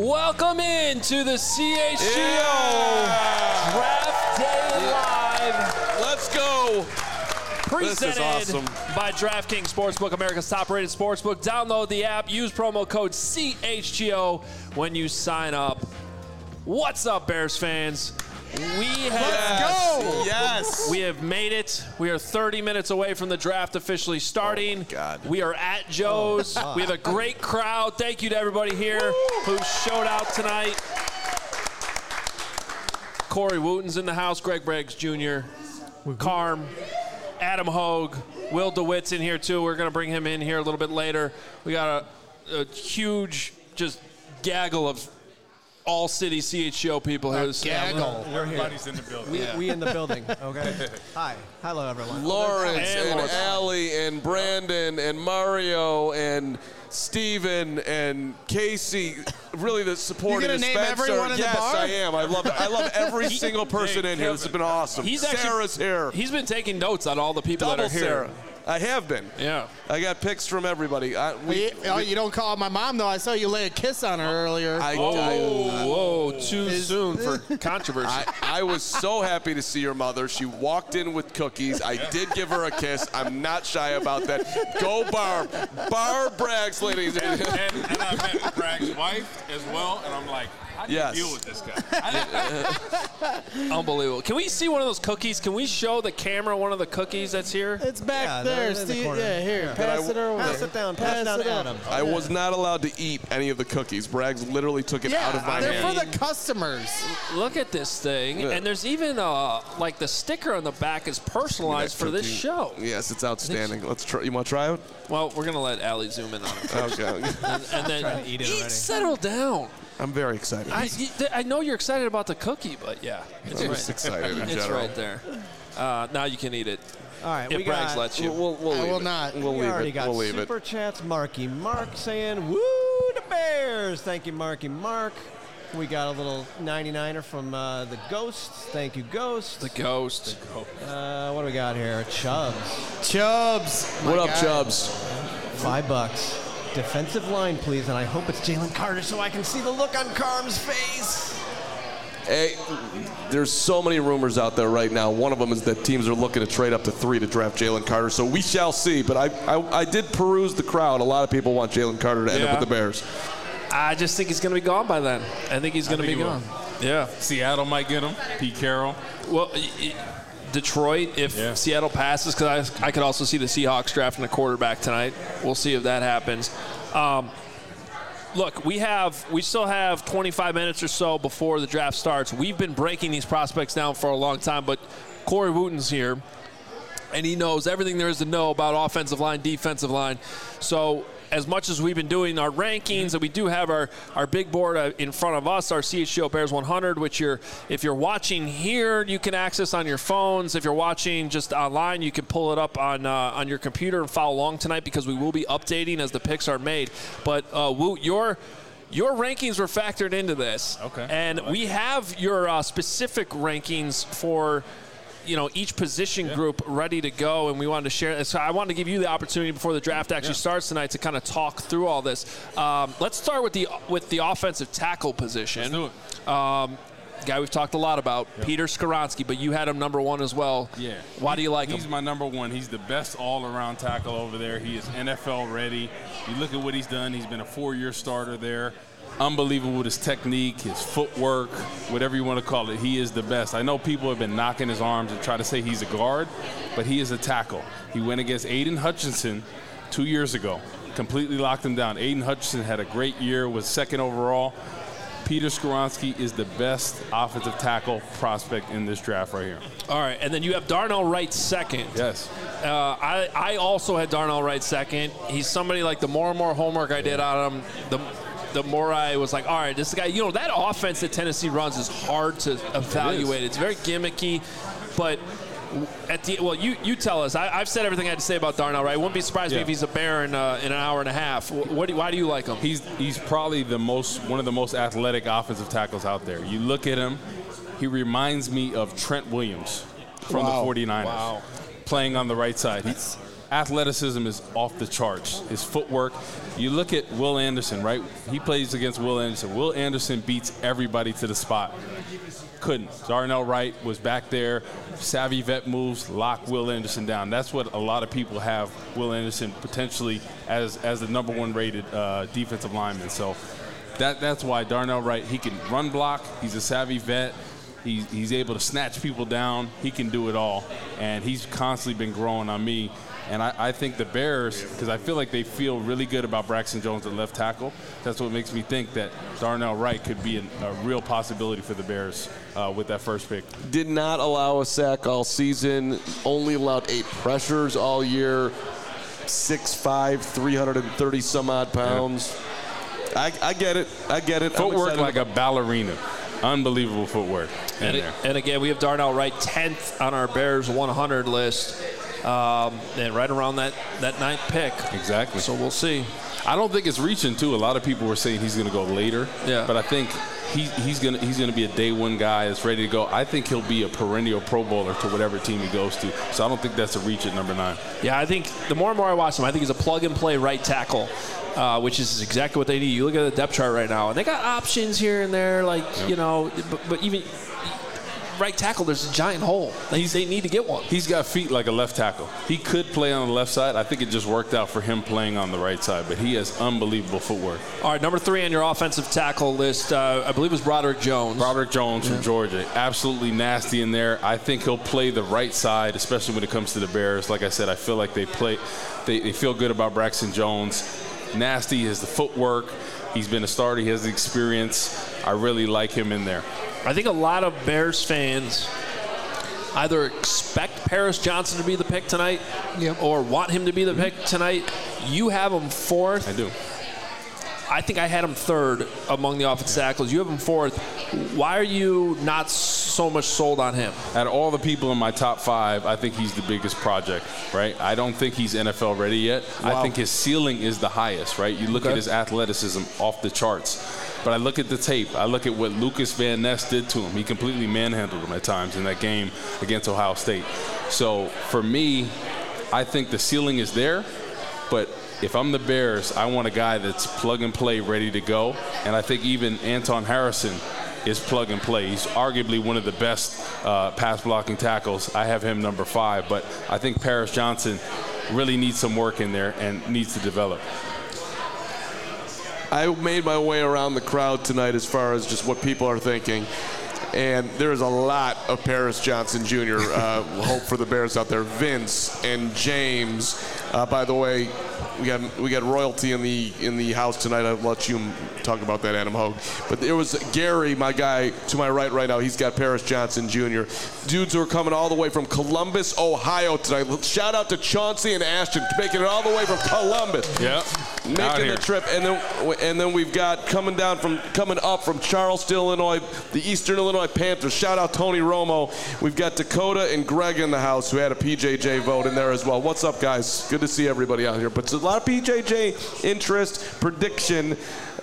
Welcome in to the CHGO Draft Day Live. Let's go. Presented This is awesome. by DraftKings Sportsbook, America's top-rated sportsbook. Download the app. Use promo code CHGO when you sign up. What's up, Bears fans? Yes. We have made it. We are 30 minutes away from the draft officially starting. Oh, God. We are at Joe's. We have a great crowd. Thank you to everybody here who showed out tonight. Corey Wooten's in the house. Greg Braggs Jr. Carm. Adam Hogue. Will DeWitt's in here, too. We're going to bring him in here a little bit later. We got a huge just gaggle of all-city CHGO people here. Gaggle. We're here. Everybody's in the building. We in the building, okay? Hi. Hello, everyone. Lawrence and Lawrence. Allie and Brandon and Mario and Steven and Casey. Really, the support You of gonna the name Spencer. everyone in the Yes, bar? I am. I love every single person in here. This has been awesome. Sarah's here. He's been taking notes on all the people Double that are here. Sarah. I have been. Yeah. I got pics from everybody. You don't call my mom, though. I saw you lay a kiss on her earlier. Whoa, too soon for controversy. I was so happy to see your mother. She walked in with cookies. I did give her a kiss. I'm not shy about that. Go Barb. Barb Braggs, ladies and gentlemen. And I met Bragg's wife as well, and I'm like, how do you deal with this guy? Unbelievable. Can we see one of those cookies? Can we show the camera one of the cookies that's here? It's back Yeah, there, they're in the Steve. corner. Yeah, here. Pass it over. Pass it down. Pass it down to Adam. I was not allowed to eat any of the cookies. Braggs literally took it out of my they're hand. for the customers. Look at this thing. Yeah. And there's even, like, the sticker on the back is personalized for this Cookie. show. Yes, it's outstanding. Let's try. You want to try it? Well, we're going to let Allie zoom in on it. Okay. And then eat it already. settle down. I'm very excited. I know you're excited about the cookie, but yeah. It's I'm right. just excited in It's general. right there. Now you can eat it. All right, If we Braggs got. lets you. We'll I leave will it. not. We'll We leave already it. got We'll leave it. super chats. Marky Mark saying, "Woo the Bears!" Thank you, Marky Mark. We got a little 99er from the Ghost. Thank you, Ghost. The ghost. What do we got here? Chubbs. Chubbs. What My up, guy. Chubbs? $5. Defensive line, please, and I hope it's Jalen Carter so I can see the look on Carm's face. Hey, there's so many rumors out there right now. One of them is that teams are looking to trade up to 3 to draft Jalen Carter. So we shall see. But I did peruse the crowd. A lot of people want Jalen Carter to end up with the Bears. I just think he's going to be gone by then. I think he's going to be think he gone. Yeah. Seattle might get him. Pete Carroll. Well, Detroit, if Seattle passes, because I could also see the Seahawks drafting a quarterback tonight. We'll see if that happens. Look, we still have 25 minutes or so before the draft starts. We've been breaking these prospects down for a long time, but Corey Wooten's here, and he knows everything there is to know about offensive line, defensive line. So as much as we've been doing our rankings, and we do have our big board in front of us, our CHGO Bears 100, which if you're watching here, you can access on your phones. If you're watching just online, you can pull it up on your computer and follow along tonight, because we will be updating as the picks are made. But Woot, your rankings were factored into this. Okay. And we have your specific rankings for each position group ready to go, and we wanted to share it. So I wanted to give you the opportunity before the draft actually starts tonight to kind of talk through all this. Let's start with the offensive tackle position. Let's do it. Guy we've talked a lot about, Peter Skoronski, but you had him number one as well. Yeah. Why do you like him? He's my number one. He's the best all-around tackle over there. He is NFL ready. You look at what he's done. He's been a 4-year starter there. Unbelievable with his technique, his footwork, whatever you want to call it. He is the best. I know people have been knocking his arms and try to say he's a guard, but he is a tackle. He went against Aiden Hutchinson 2 years ago, completely locked him down. Aiden Hutchinson had a great year, was second overall. Peter Skoronski is the best offensive tackle prospect in this draft right here. All right, and then you have Darnell Wright second. Yes. I also had Darnell Wright second. He's somebody, like, the more and more homework I did on him, the more I was like, all right, this guy, that offense that Tennessee runs is hard to evaluate. It's very gimmicky, but you tell us. I've said everything I had to say about Darnell Wright. Wouldn't be surprised me if he's a Bear in an hour and a half. Why do you like him? He's probably one of the most athletic offensive tackles out there. You look at him, he reminds me of Trent Williams from the 49ers. Wow. Playing on the right side. athleticism is off the charts. His footwork. You look at Will Anderson, right? He plays against Will Anderson. Will Anderson beats everybody to the spot. Couldn't. Darnell Wright was back there. Savvy vet moves, lock Will Anderson down. That's what a lot of people have Will Anderson potentially as the number one rated defensive lineman. So that's why Darnell Wright, he can run block. He's a savvy vet. He's able to snatch people down. He can do it all. And he's constantly been growing on me. And I think the Bears, because I feel like they feel really good about Braxton Jones at left tackle, that's what makes me think that Darnell Wright could be a real possibility for the Bears with that first pick. Did not allow a sack all season, only allowed 8 pressures all year, 6'5", 330 some odd pounds. Yeah. I get it. Footwork like a ballerina. Unbelievable footwork. And again, we have Darnell Wright 10th on our Bears 100 list. And right around that 9th pick. Exactly. So we'll see. I don't think it's reaching, too. A lot of people were saying he's going to go later. Yeah. But I think he's going to be a day one guy that's ready to go. I think he'll be a perennial Pro Bowler to whatever team he goes to. So I don't think that's a reach at number 9. Yeah, I think the more and more I watch him, I think he's a plug-and-play right tackle, which is exactly what they need. You look at the depth chart right now, and they got options here and there, but even – right tackle, there's a giant hole. They need to get one. He's got feet like a left tackle. He could play on the left side. I think it just worked out for him playing on the right side, but he has unbelievable footwork. All right, number 3 on your offensive tackle list, I believe, was Broderick Jones. Broderick Jones from Georgia. Absolutely nasty in there. I think he'll play the right side, especially when it comes to the Bears. Like I said, I feel like they feel good about Braxton Jones. Nasty is the footwork. He's been a starter. He has the experience. I really like him in there. I think a lot of Bears fans either expect Paris Johnson to be the pick tonight or want him to be the pick tonight. You have him 4th. I do. I think I had him 3rd among the offensive tackles. You have him 4th. Why are you not so much sold on him? Out of all the people in my top 5, I think he's the biggest project, right? I don't think he's NFL ready yet. Wow. I think his ceiling is the highest, right? You look at his athleticism off the charts. But I look at the tape. I look at what Lucas Van Ness did to him. He completely manhandled him at times in that game against Ohio State. So for me, I think the ceiling is there. But if I'm the Bears, I want a guy that's plug and play, ready to go. And I think even Anton Harrison is plug and play. He's arguably one of the best pass blocking tackles. I have him number 5. But I think Paris Johnson really needs some work in there and needs to develop. I made my way around the crowd tonight as far as just what people are thinking. And there's a lot of Paris Johnson Jr. Hope for the Bears out there. Vince and James. By the way, we got royalty in the house tonight. I'll let you talk about that, Adam Hogue. But there was Gary, my guy to my right now. He's got Paris Johnson Jr. Dudes who are coming all the way from Columbus, Ohio tonight. Shout out to Chauncey and Ashton making it all the way from Columbus. Yeah. Making the trip, and then we've got coming up from Charleston, Illinois, the Eastern Illinois Panthers. Shout out Tony Romo. We've got Dakota and Greg in the house who had a PJJ vote in there as well. What's up, guys? Good to see everybody out here. But there's a lot of PJJ interest, prediction.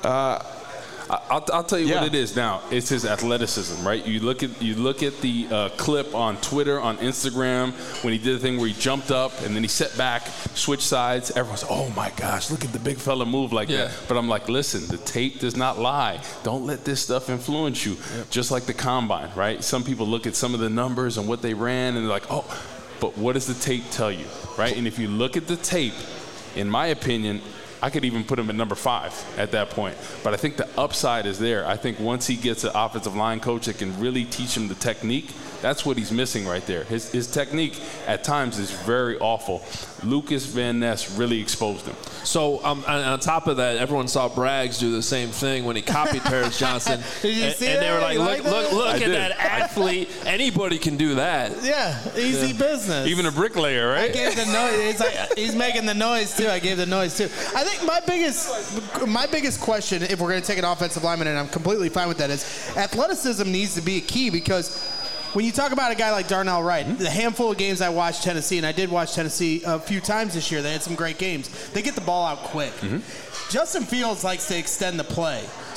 I'll tell you what it is now. It's his athleticism, right? You look at the clip on Twitter, on Instagram, when he did the thing where he jumped up and then he set back, switched sides. Everyone's, oh my gosh, look at the big fella move like that. But I'm like, listen, the tape does not lie. Don't let this stuff influence you. Just like the combine, right? Some people look at some of the numbers and what they ran and they're like, oh, but what does the tape tell you, right? And if you look at the tape, in my opinion, I could even put him at number 5 at that point. But I think the upside is there. I think once he gets an offensive line coach that can really teach him the technique, that's what he's missing right there. His technique at times is very awful. Lucas Van Ness really exposed him. So on top of that, everyone saw Braggs do the same thing when he copied Paris Johnson. Did you see and that? they were like, look at that athlete. Anybody can do that. Yeah, easy business. Even a bricklayer, right? I gave the noise. It's like, he's making the noise too. I gave the noise too. I think my biggest question, if we're going to take an offensive lineman, and I'm completely fine with that, is athleticism needs to be a key, because when you talk about a guy like Darnell Wright, the handful of games I watched Tennessee, and I did watch Tennessee a few times this year, they had some great games. They get the ball out quick. Justin Fields likes to extend the play.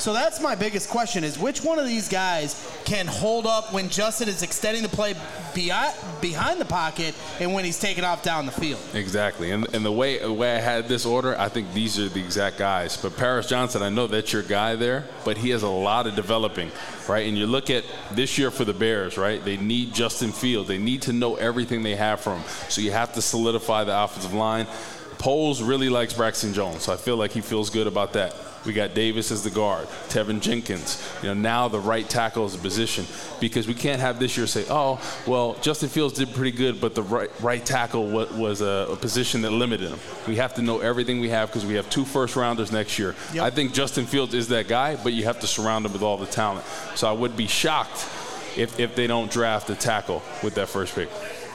So that's my biggest question is which one of these guys can hold up when Justin is extending the play behind the pocket and when he's taking off down the field? Exactly. And the way I had this order, I think these are the exact guys. But Paris Johnson, I know that's your guy there, but he has a lot of developing, right? And you look at this year for the Bears, right? They need Justin Fields. They need to know everything they have from him. So you have to solidify the offensive line. Poles really likes Braxton Jones, so I feel like he feels good about that. We got Davis as the guard, Tevin Jenkins. Now the right tackle is a position because we can't have this year say, oh, well, Justin Fields did pretty good, but the right tackle was a position that limited him. We have to know everything we have because we have 2 first-rounders next year. Yep. I think Justin Fields is that guy, but you have to surround him with all the talent. So I would be shocked if they don't draft a tackle with that first pick.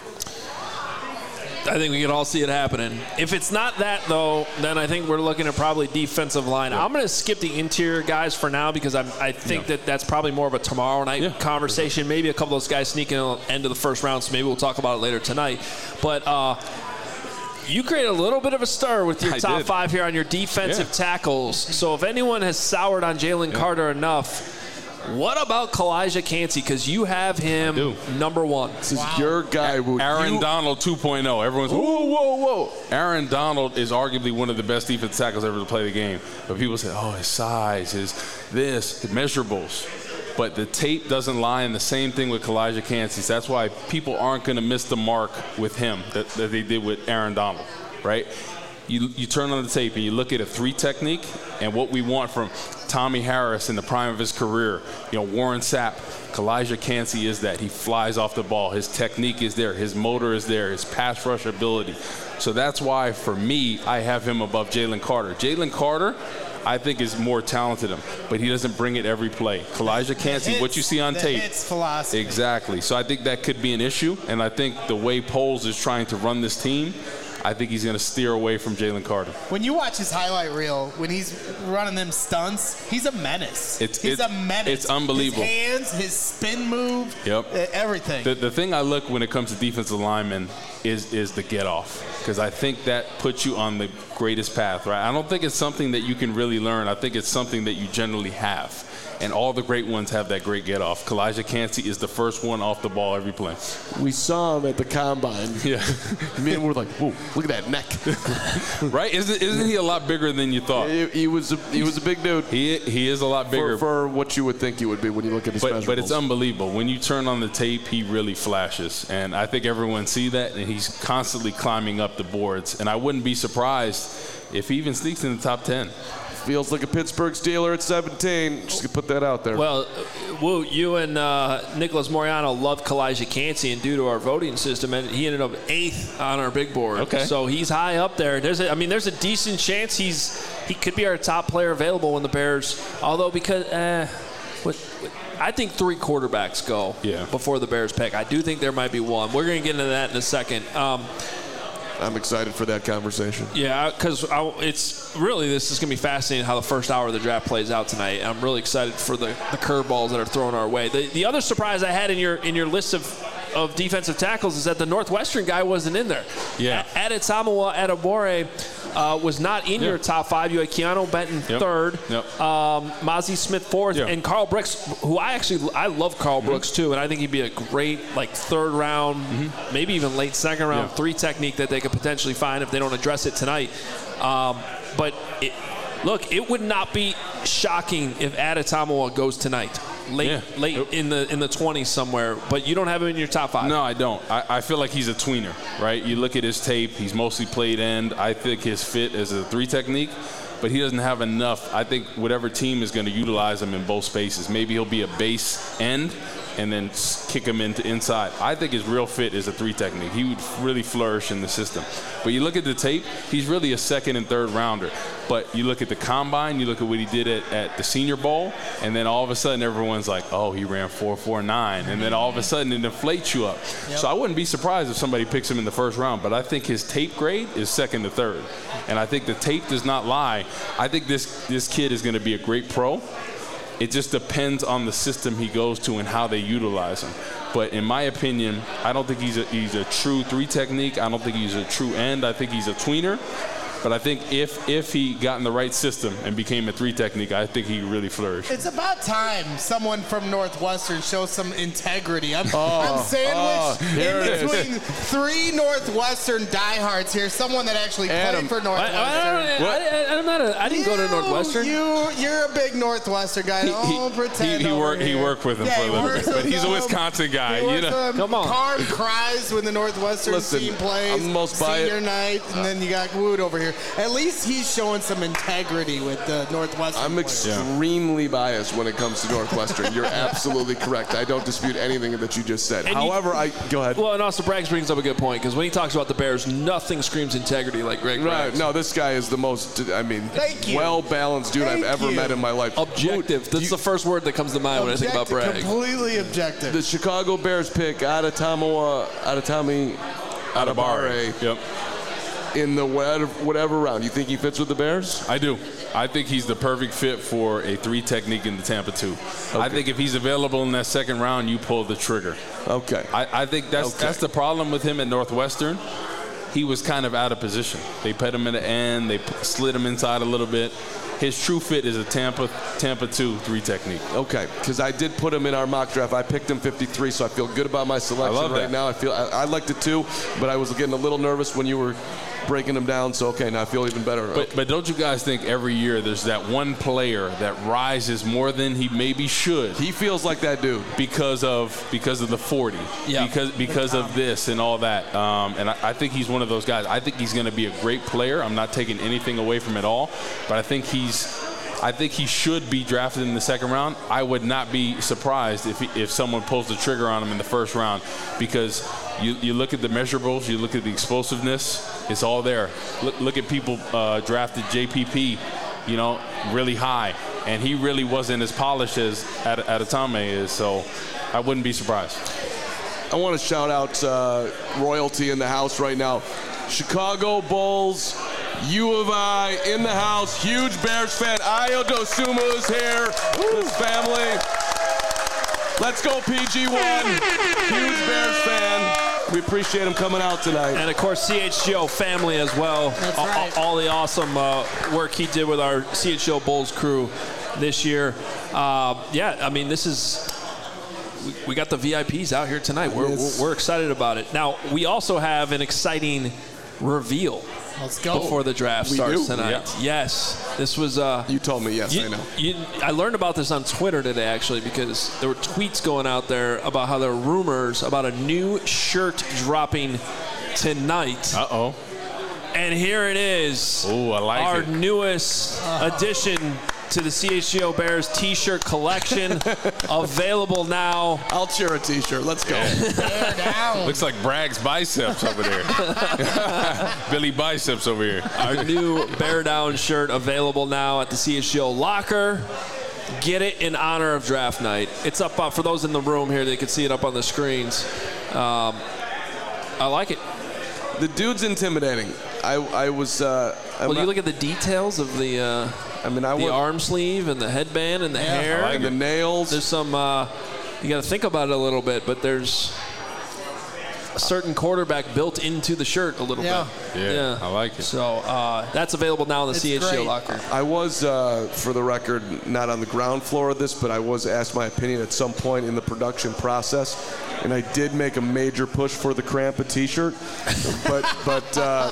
I think we can all see it happening. If it's not that, though, then I think we're looking at probably defensive line. Yeah. I'm going to skip the interior guys for now because I think that's probably more of a tomorrow night conversation. Maybe a couple of those guys sneaking in the end of the first round, so maybe we'll talk about it later tonight. But you create a little bit of a stir with your top 5 here on your defensive tackles. So if anyone has soured on Jalen Carter enough, what about Kalijah Kancey? Because you have him number 1. This is your guy. Aaron Donald 2.0. Everyone's, whoa. Aaron Donald is arguably one of the best defensive tackles ever to play the game. But people say, oh, his size, his measurables. But the tape doesn't lie, and the same thing with Kalijah Kancey. That's why people aren't going to miss the mark with him that they did with Aaron Donald, right? You turn on the tape and you look at a 3 technique and what we want from Tommy Harris in the prime of his career, Warren Sapp, Kalijah Kancey is that. He flies off the ball. His technique is there. His motor is there. His pass rush ability. So that's why, for me, I have him above Jalen Carter. Jalen Carter, I think, is more talented than him, but he doesn't bring it every play. Kalijah Kancey, what you see on tape. Hits philosophy. Exactly. So I think that could be an issue, and I think the way Poles is trying to run this team, I think he's going to steer away from Jalen Carter. When you watch his highlight reel, when he's running them stunts, he's a menace. He's a menace. It's unbelievable. His hands, his spin move, everything. The thing I look when it comes to defensive linemen is the get off, because I think that puts you on the greatest path, right? I don't think it's something that you can really learn. I think it's something that you generally have. And all the great ones have that great get-off. Kalijah Kancey is the first one off the ball every play. We saw him at the Combine. Yeah. Man, we're like, whoa, look at that neck. Right? Isn't he a lot bigger than you thought? He was a big dude. He is a lot bigger. For what you would think he would be when you look at his measurables. But it's unbelievable. When you turn on the tape, he really flashes. And I think everyone see that, and he's constantly climbing up the boards. And I wouldn't be surprised if he even sneaks in the top 10. Feels like a Pittsburgh Steeler at 17. Just to put that out there. Well, you and Nicholas Moriano loved Kalijah Kancey, and due to our voting system, and he ended up 8th on our big board. Okay. So he's high up there. There's a decent chance he could be our top player available when the Bears. Although I think 3 quarterbacks go before the Bears pick. I do think there might be one. We're going to get into that in a second. I'm excited for that conversation. Yeah, because this is going to be fascinating how the first hour of the draft plays out tonight. I'm really excited for the curveballs that are thrown our way. The other surprise I had in your list of defensive tackles is that the Northwestern guy wasn't in there. Yeah. Adetomiwa Adebawore was not in your top 5. You had Keanu Benton 3rd, Mazi Smith 4th, and Carl Brooks, who I love Carl Brooks too, and I think he'd be a great 3rd round, maybe even late 2nd round 3 technique that they could potentially find if they don't address it tonight. But it would not be shocking if Adetomiwa goes tonight. Late in the 20s somewhere, but you don't have him in your top 5. No, I don't. I feel like he's a tweener, right? You look at his tape, he's mostly played end. I think his fit is a 3 technique, but he doesn't have enough. I think whatever team is going to utilize him in both spaces. Maybe he'll be a base end and then kick him into inside. I think his real fit is a 3 technique. He would really flourish in the system. But you look at the tape, he's really a 2nd and 3rd rounder. But you look at the Combine, you look at what he did at the Senior Bowl, and then all of a sudden everyone's like, oh, he ran 4.49, and then all of a sudden it inflates you up. Yep. So I wouldn't be surprised if somebody picks him in the 1st round, but I think his tape grade is 2nd to 3rd. And I think the tape does not lie. I think this kid is going to be a great pro. It just depends on the system he goes to and how they utilize him. But in my opinion, I don't think he's a true 3 technique. I don't think he's a true end. I think he's a tweener. But I think if he got in the right system and became a 3 technique, I think he really flourished. It's about time someone from Northwestern shows some integrity. I'm sandwiched in between 3 Northwestern diehards here. Someone that actually played for Northwestern. I didn't go to Northwestern. You're a big Northwestern guy. Don't pretend. He worked with him for a little bit, but he's a Wisconsin guy. Come on. Carm cries when the Northwestern team plays. I'm the most senior night, and then you got Wood over here. At least he's showing some integrity with the Northwestern. I'm extremely biased when it comes to Northwestern. You're absolutely correct. I don't dispute anything that you just said. However, go ahead. Well, and also Braggs brings up a good point, because when he talks about the Bears, nothing screams integrity like Greg Braggs. Right. No, this guy is the most, well-balanced dude I've ever met in my life. Objective. That's the first word that comes to mind when I think about Braggs. Completely objective. The Chicago Bears pick Adetomiwa Adebawore. Yep. In the whatever round. You think he fits with the Bears? I do. I think he's the perfect fit for a 3 technique in the Tampa 2. Okay. I think if he's available in that second round, you pull the trigger. Okay. I think that's the problem with him at Northwestern. He was kind of out of position. They put him in the end. They slid him inside a little bit. His true fit is a Tampa 2 3 technique. Okay, because I did put him in our mock draft. I picked him 53, so I feel good about my selection right now. I liked it too, but I was getting a little nervous when you were breaking him down. So now I feel even better. But don't you guys think every year there's that one player that rises more than he maybe should? He feels like that dude because of the 40. Yeah. Because of this and all that. And I think he's one of those guys. I think he's going to be a great player. I'm not taking anything away from it all, but I think he should be drafted in the second round. I would not be surprised if someone pulls the trigger on him in the first round, because you look at the measurables, you look at the explosiveness, it's all there. Look at people drafted JPP, really high, and he really wasn't as polished as Adetomiwa is, so I wouldn't be surprised. I want to shout out royalty in the house right now. Chicago Bulls, U of I in the house, huge Bears fan. Ayo Dosunmu is here, his family. Let's go PG1, huge Bears fan. We appreciate him coming out tonight. And of course, CHGO family as well. That's right. All the awesome work he did with our CHGO Bulls crew this year. This is... We got the VIPs out here tonight. We're excited about it. Now, we also have an exciting reveal. Let's go. Before the draft starts tonight. Yeah. Yes. This was... you told me, yes, I know. I learned about this on Twitter today, actually, because there were tweets going out there about how there were rumors about a new shirt dropping tonight. Uh-oh. And here it is. Oh, I like our it. newest addition to the CHGO Bears T-shirt collection, available now. I'll cheer a T-shirt. Let's go. Bear down. Looks like Bragg's biceps over there. Billy biceps over here. Our new Bear Down shirt available now at the CHGO locker. Get it in honor of draft night. It's up for those in the room here. They can see it up on the screens. I like it. The dude's intimidating. I was. You look at the details of the. The arm sleeve and the headband and the hair and the nails. There's some. You got to think about it a little bit, but there's a certain quarterback built into the shirt a little bit. Yeah, I like it. So that's available now in the CHGO locker. I was, for the record, not on the ground floor of this, but I was asked my opinion at some point in the production process, and I did make a major push for the Krampa T-shirt, but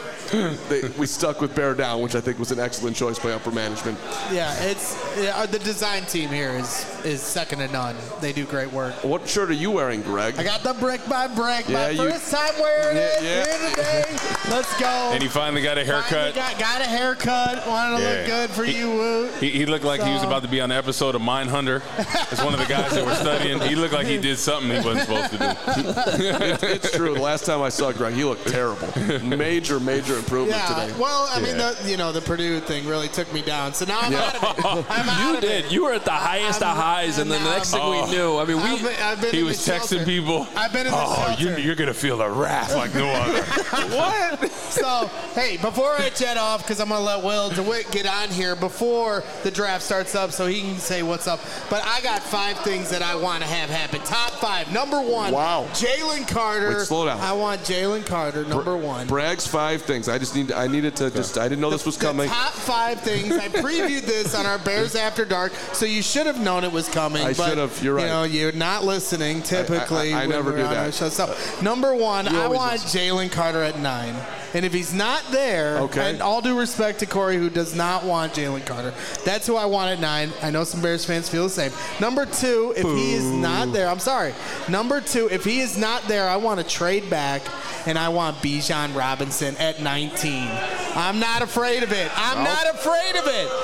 we stuck with Bear Down, which I think was an excellent choice by upper management. Yeah, the design team here is second to none. They do great work. What shirt are you wearing, Greg? I got the brick by brick. My first time wearing it here today. Let's go. And he finally got a haircut. Got a haircut. Wanted to look good for you, Woot. He looked like he was about to be on an episode of Mindhunter. It's one of the guys that were studying. He looked like he did something he wasn't supposed to do. It's true. The last time I saw Greg, he looked terrible. Major improvement today. Well, I mean, the Purdue thing really took me down. So now I'm out of it. You did. You were at the highest of highs, and then the next thing we knew, I mean, he was texting people. I've been in the shelter. You're going to feel the wrath like no other. What? So, hey, before I jet off, because I'm going to let Will DeWitt get on here before the draft starts up so he can say what's up. But I got 5 things that I want to have happen. Top 5. Number 1. Wow. Jalen Carter. Wait, slow down. I want Jalen Carter, number 1. Bragg's 5 things. things. I needed to I didn't know this was coming. The top 5 things. I previewed this on our Bears After Dark, so you should have known it was coming. I should have. You're right. You're not listening typically. I never do that. So, number 1, I want Jalen Carter at 9. And if he's not there, and all due respect to Corey, who does not want Jalen Carter, that's who I want at 9. I know some Bears fans feel the same. Number 2, if he is not there, I'm sorry. Number 2, if he is not there, I want to trade back, and I want Bijan Robinson at 19. I'm not afraid of it. I'm not afraid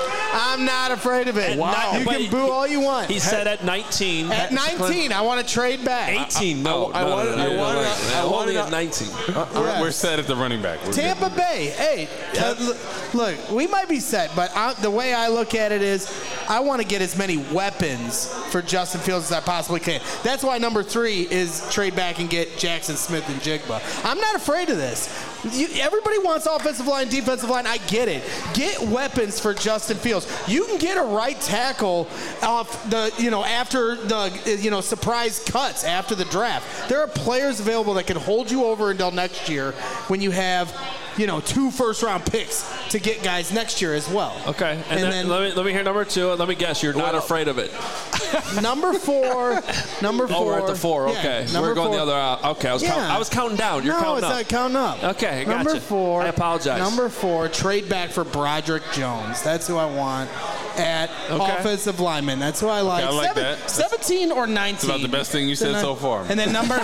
of it. Wow. You can boo all you want. He said at 19. At 19, I want to trade back. 18. I wanted at 19. We're set at the running back. Tampa Bay. Hey, look, we might be set, but the way I look at it is I want to get as many weapons for Justin Fields as I possibly can. That's why number 3 is trade back and get Jackson Smith and Jigba. I'm not afraid of this. Everybody wants offensive line, defensive line. I get it. Get weapons for Justin Fields. You can get a right tackle off after the surprise cuts after the draft. There are players available that can hold you over until next year when you have 2 first-round picks to get guys next year as well. Okay, and then let me hear number 2. Let me guess, you're not afraid of it. Number 4. Oh, we're at the 4. Okay, we're going 4. The other out. Okay, I was counting down. You're counting up. No, it's not counting up. Okay, I got Number you. 4. I apologize. Number 4, trade back for Broderick Jones. That's who I want at offensive lineman. That's who I like. Okay, I like that. 17 or 19. It's about the best thing you said so far. And then number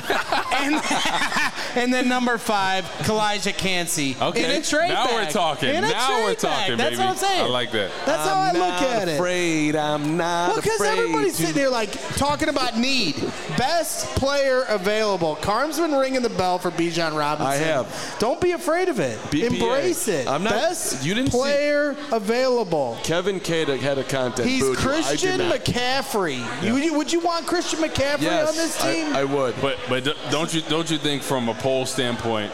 and then number 5, Kalijah Cansey. Okay. In a trade now back. we're talking. Now we're talking, baby. That's what I'm saying. I like that. That's how I look at it. I'm not afraid. Because everybody's sitting there talking about need. Best player available. Carm's been ringing the bell for Bijan Robinson. I have. Don't be afraid of it. BPA. Embrace it. I'm not. Best You didn't player available. Kevin Cada had a content. He's Christian McCaffrey. Yeah. Would you want Christian McCaffrey on this team? I would. But don't you think from a poll standpoint,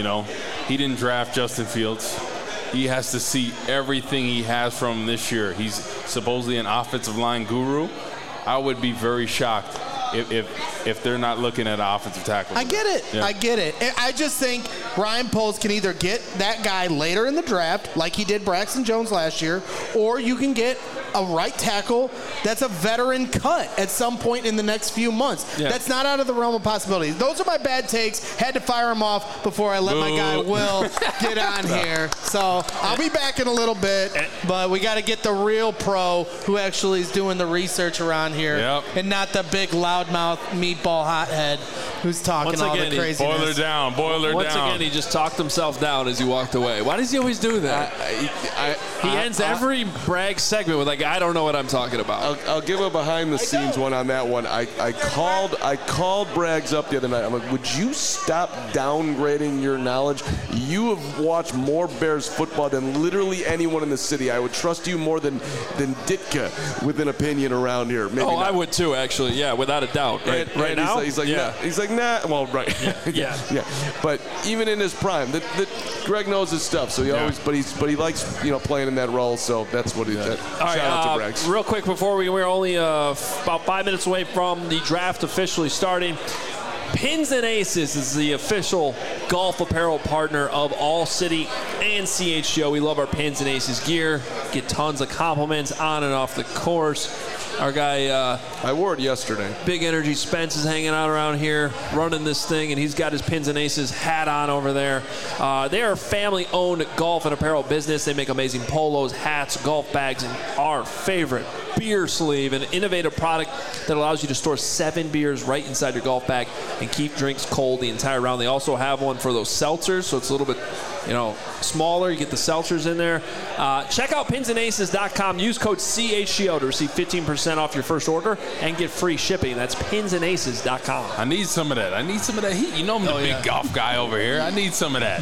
he didn't draft Justin Fields. He has to see everything he has from this year. He's supposedly an offensive line guru. I would be very shocked if they're not looking at an offensive tackle. I get it. Yeah. I get it. I just think Ryan Poles can either get that guy later in the draft, like he did Braxton Jones last year, or you can get a right tackle that's a veteran cut at some point in the next few months. Yeah. That's not out of the realm of possibility. Those are my bad takes. Had to fire them off before I let my guy Will get on here. So I'll be back in a little bit, but we got to get the real pro who actually is doing the research around here, and not the big loudmouth meatball hothead who's talking all the craziness. Boil her down. Once again, he just talked himself down as he walked away. Why does he always do that? He ends every brag segment with I don't know what I'm talking about. I'll give a behind-the-scenes one on that one. I called Braggs up the other night. I'm like, would you stop downgrading your knowledge? You have watched more Bears football than literally anyone in the city. I would trust you more than Ditka with an opinion around here. Maybe not. I would too, actually. Yeah, without a doubt. Right now? He's like, nah. He's like, nah. Well, right. Yeah. But even in his prime, Greg knows his stuff. So he always, but he likes playing in that role. So that's what he did. Shout out to Braggs. Real quick before we're only about 5 minutes away from the draft officially starting. Pins and Aces is the official golf apparel partner of All City and CHGO. We love our Pins and Aces gear. Get tons of compliments on and off the course. Our guy, I wore it yesterday. Big Energy Spence is hanging out around here running this thing, and he's got his Pins and Aces hat on over there. They are a family-owned golf and apparel business. They make amazing polos, hats, golf bags, and our favorite beer sleeve, an innovative product that allows you to store 7 beers right inside your golf bag and keep drinks cold the entire round. They also have one for those seltzers, so it's a little bit smaller. You get the seltzers in there. Check out pinsandaces.com. Use code CHGO to receive 15% off your first order and get free shipping. That's pinsandaces.com. I need some of that. heat. I'm the big golf guy over here. I need some of that.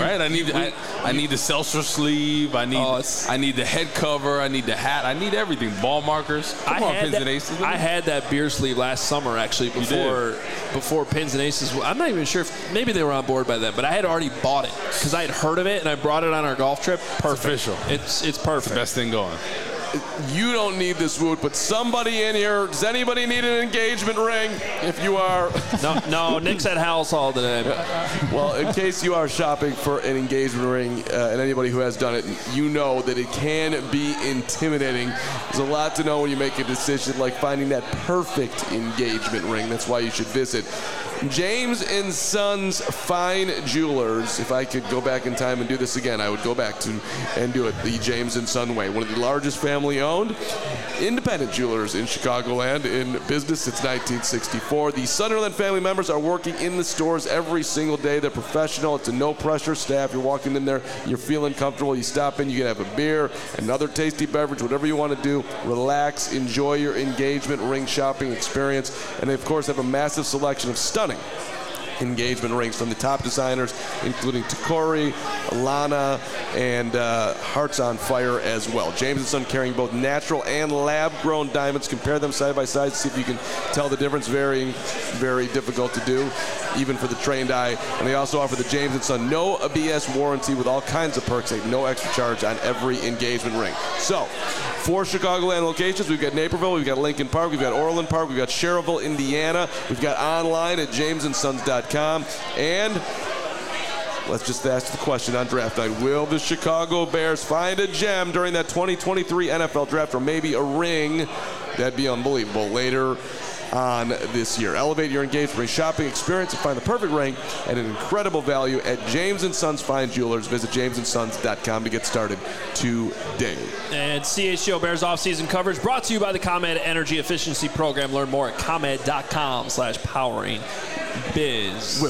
I need the seltzer sleeve. I need the head cover. I need the hat. I need everything. Ball markers. Come on, Pins and Aces. I had that beer sleeve last summer, actually, before Pins and Aces. I'm not even sure if maybe they were on board by then, but I had already bought it because I had heard of it and I brought it on our golf trip. Perfect. It's official. It's perfect. It's the best thing going. You don't need this, Woot, but somebody in here, does anybody need an engagement ring? If you are... No, Nick's at Hal's Hall today. Well, in case you are shopping for an engagement ring, and anybody who has done it, you know that it can be intimidating. There's a lot to know when you make a decision, like finding that perfect engagement ring. That's why you should visit James & Sons Fine Jewelers. If I could go back in time and do this again, I would go back to and do it the James & Son way. One of the largest family-owned independent jewelers in Chicagoland, in business since 1964. The Sunderland family members are working in the stores every single day. They're professional. It's a no-pressure staff. You're walking in there, you're feeling comfortable. You stop in, you can have a beer, another tasty beverage, whatever you want to do. Relax, enjoy your engagement ring shopping experience. And they, of course, have a massive selection of stunning engagement rings from the top designers, including Tacori, Lana, and Hearts on Fire as well. James & Son carrying both natural and lab-grown diamonds. Compare them side by side, see if you can tell the difference. Very, very difficult to do, even for the trained eye. And they also offer the James & Son no ABS warranty with all kinds of perks, like no extra charge on every engagement ring. So, 4 Chicagoland locations. We've got Naperville, we've got Lincoln Park, we've got Orland Park, we've got Sherrville, Indiana. We've got online at jamesandSons.com. And let's just ask the question on draft night. Will the Chicago Bears find a gem during that 2023 NFL draft, or maybe a ring? That'd be unbelievable later on this year. Elevate your engagement ring shopping experience and find the perfect ring at an incredible value at James & Sons Fine Jewelers. Visit jamesandSons.com to get started today. And CHGO Bears offseason coverage brought to you by the ComEd Energy Efficiency Program. Learn more at ComEd.com/powering biz.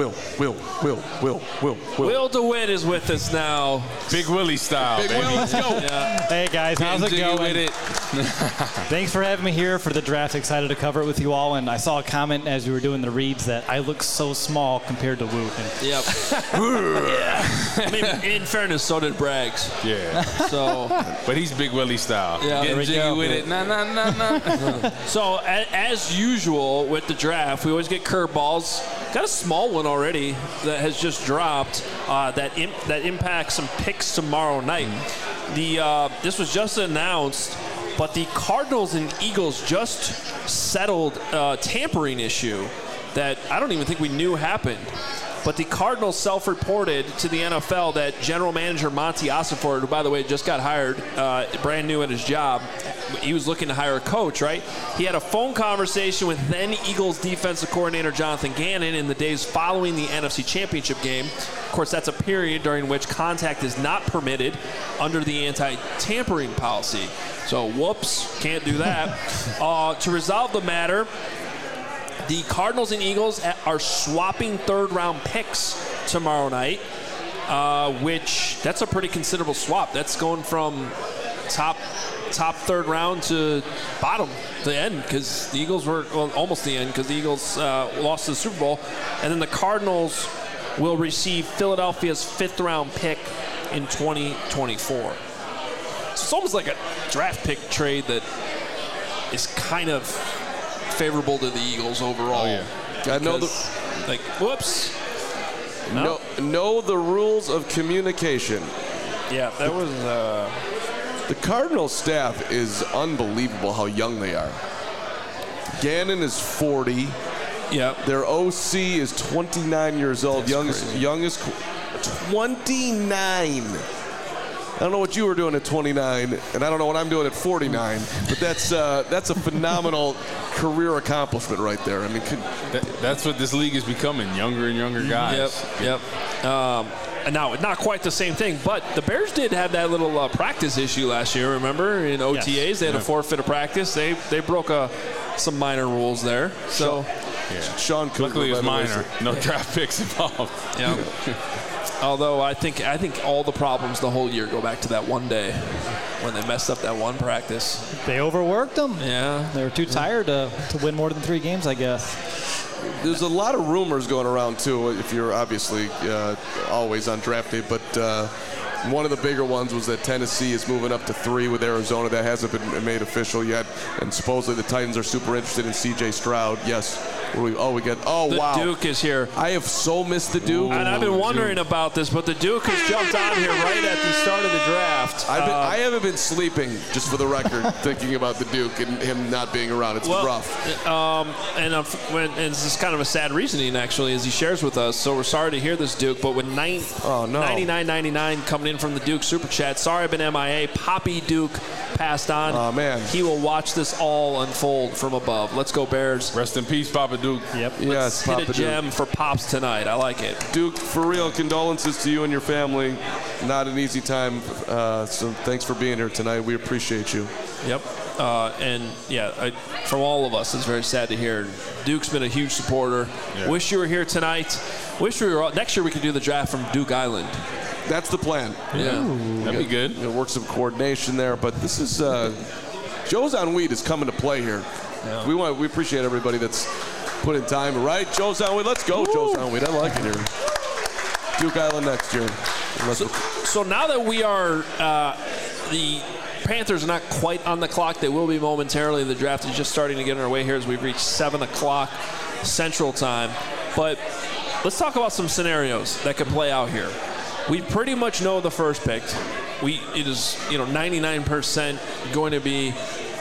Will DeWitt is with us now. Big Willie style, Big baby. Will, let's go. Yeah. Hey guys, how's it going? With it. Thanks for having me here for the draft. Excited to cover it with you all. And I saw a comment as you were doing the reads that I look so small compared to Woot. Yep. Yeah. I mean, in fairness, so did Braggs. Yeah. So, But he's Big Willie style. Yeah. Getting jiggy with it. Nah. so as usual with the draft, we always get curveballs. Got a small one already that has just dropped that impacts some picks tomorrow night. This was just announced, but the Cardinals and Eagles just settled a tampering issue that I don't even think we knew happened. But the Cardinals self-reported to the NFL that general manager Monty Ossenford, who, by the way, just got hired, brand new at his job, he was looking to hire a coach, right? He had a phone conversation with then Eagles defensive coordinator Jonathan Gannon in the days following the NFC Championship game. Of course, that's a period during which contact is not permitted under the anti-tampering policy. So, whoops, can't do that. To resolve the matter, the Cardinals and Eagles are swapping third-round picks tomorrow night, which that's a pretty considerable swap. That's going from top third round to bottom, the end, because the Eagles were almost the end because the Eagles lost the Super Bowl. And then the Cardinals will receive Philadelphia's fifth-round pick in 2024. So it's almost like a draft pick trade that is kind of favorable to the Eagles overall. Oh, yeah. I know whoops. Know the rules of communication. Yeah, that was... The Cardinals staff is unbelievable how young they are. Gannon is 40. Yeah. Their OC is 29 years old. That's youngest 29. I don't know what you were doing at 29, and I don't know what I'm doing at 49, but that's a phenomenal career accomplishment right there. I mean, that's what this league is becoming, younger and younger guys. Yep. Now, not quite the same thing, but the Bears did have that little practice issue last year, remember? In OTAs, yes. They had a forfeit of practice. They broke some minor rules there. So, Sean Cooper, luckily it was minor. No draft picks involved. Yeah. Although I think all the problems the whole year go back to that one day when they messed up that one practice. They overworked them. Yeah. They were too tired to win more than 3 games, I guess. There's a lot of rumors going around, too, if you're obviously always on draft day. But one of the bigger ones was that Tennessee is moving up to 3 with Arizona. That hasn't been made official yet. And supposedly the Titans are super interested in C.J. Stroud. Yes, The Duke is here. I have so missed the Duke. And I've been wondering about this, but the Duke has jumped on here right at the start of the draft. I haven't been sleeping, just for the record, thinking about the Duke and him not being around. It's rough. And this is kind of a sad reasoning, actually, as he shares with us. So we're sorry to hear this, Duke, but with $99.99 coming in from the Duke Super Chat, sorry I've been MIA. Poppy Duke passed on. Oh, man. He will watch this all unfold from above. Let's go, Bears. Rest in peace, Papa Duke. Yep. Yes, hit Papa a gem for Pops tonight. I like it. Duke, for real, condolences to you and your family. Not an easy time. So thanks for being here tonight. We appreciate you. Yep. From all of us, it's very sad to hear. Duke's been a huge supporter. Yeah. Wish you were here tonight. Wish we were. Next year we could do the draft from Duke Island. That's the plan. Yeah. That'd be good. Work some coordination there, but this is Joe's on Weed is coming to play here. Yeah. We appreciate everybody that's put in time, right? Joe's on Weed. Let's go, Joe's on Weed. I like it here. Duke Island next year. So now that we are the Panthers are not quite on the clock. They will be momentarily. The draft is just starting to get underway here as we've reached 7 o'clock Central Time. But let's talk about some scenarios that could play out here. We pretty much know the first pick. It is 99% going to be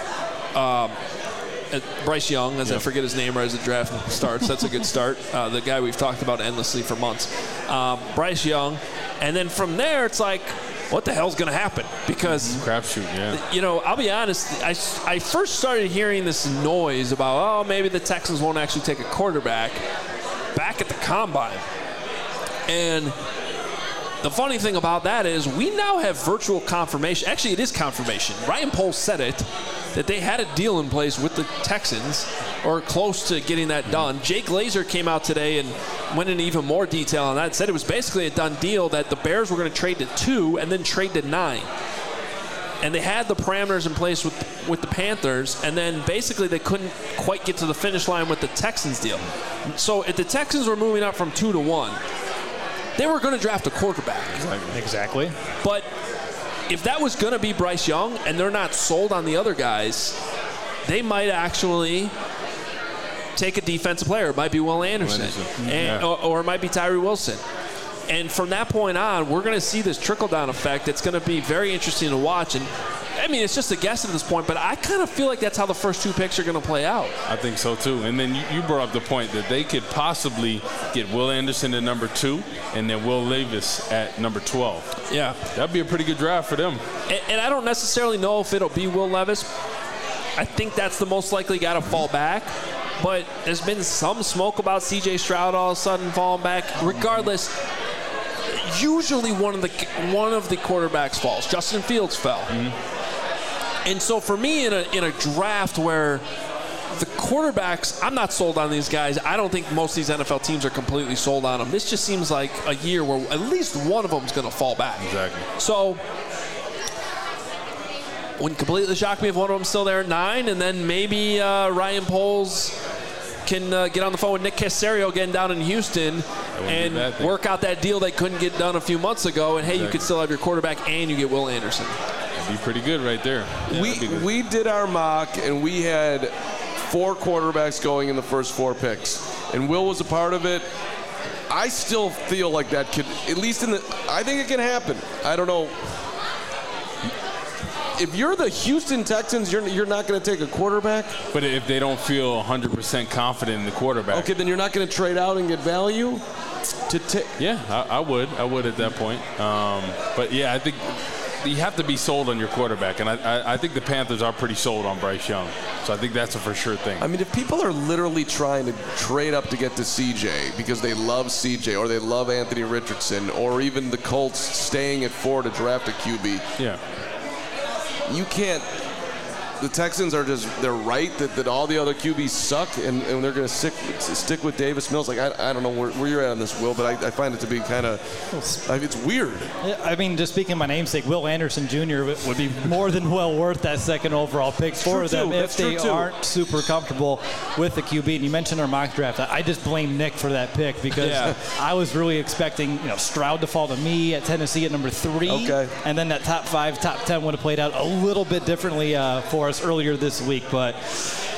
Bryce Young, as I forget his name right as the draft starts. That's a good start. The guy we've talked about endlessly for months. Bryce Young. And then from there, it's like, what the hell's going to happen? Because crapshoot, I'll be honest. I first started hearing this noise about, maybe the Texans won't actually take a quarterback back at the combine. And the funny thing about that is we now have virtual confirmation. Actually, it is confirmation. Ryan Poles said it, that they had a deal in place with the Texans or close to getting that done. Jake Glazer came out today and went into even more detail on that. Said it was basically a done deal that the Bears were going to trade to 2 and then trade to 9. And they had the parameters in place with the Panthers, and then basically they couldn't quite get to the finish line with the Texans deal. So if the Texans were moving up from 2 to 1, they were going to draft a quarterback. Exactly. But if that was going to be Bryce Young and they're not sold on the other guys, they might actually take a defensive player. It might be Will Anderson. Or it might be Tyree Wilson. And from that point on, we're going to see this trickle-down effect. It's going to be very interesting to watch. And I mean, it's just a guess at this point, but I kind of feel like that's how the first 2 picks are going to play out. I think so, too. And then you brought up the point that they could possibly get Will Anderson at number 2 and then Will Levis at number 12. Yeah. That'd be a pretty good draft for them. And I don't necessarily know if it'll be Will Levis. I think that's the most likely guy to fall back. But there's been some smoke about C.J. Stroud all of a sudden falling back. Regardless, usually one of the quarterbacks falls. Justin Fields fell. Mm-hmm. And so for me, in a draft where the quarterbacks, I'm not sold on these guys. I don't think most of these NFL teams are completely sold on them. This just seems like a year where at least one of them is going to fall back. Exactly. So wouldn't completely shock me if one of them's still there at 9, and then maybe Ryan Poles can get on the phone with Nick Caserio getting down in Houston and work out that deal they couldn't get done a few months ago. And, hey, you could still have your quarterback and you get Will Anderson. That'd be pretty good right there. Yeah, we did our mock, and we had 4 quarterbacks going in the first 4 picks. And Will was a part of it. I still feel like that could, at least I think it can happen. I don't know. If you're the Houston Texans, you're not going to take a quarterback? But if they don't feel 100% confident in the quarterback. Okay, then you're not going to trade out and get value? Yeah, I would. I would at that point. But, yeah, I think you have to be sold on your quarterback. And I think the Panthers are pretty sold on Bryce Young. So I think that's a for sure thing. I mean, if people are literally trying to trade up to get to CJ because they love CJ or they love Anthony Richardson or even the Colts staying at 4 to draft a QB. Yeah. You can't. The Texans are they're right that all the other QBs suck and they're going to stick with Davis Mills. Like, I don't know where you're at on this, Will, but I find it to be kind of, it's weird. I mean, just speaking my namesake, Will Anderson Jr. would be more than well worth that second overall pick for them if they aren't super comfortable with the QB. And you mentioned our mock draft. I just blame Nick for that pick because I was really expecting Stroud to fall to me at Tennessee at number 3. Okay. And then that top 5, top 10 would have played out a little bit differently for us earlier this week. But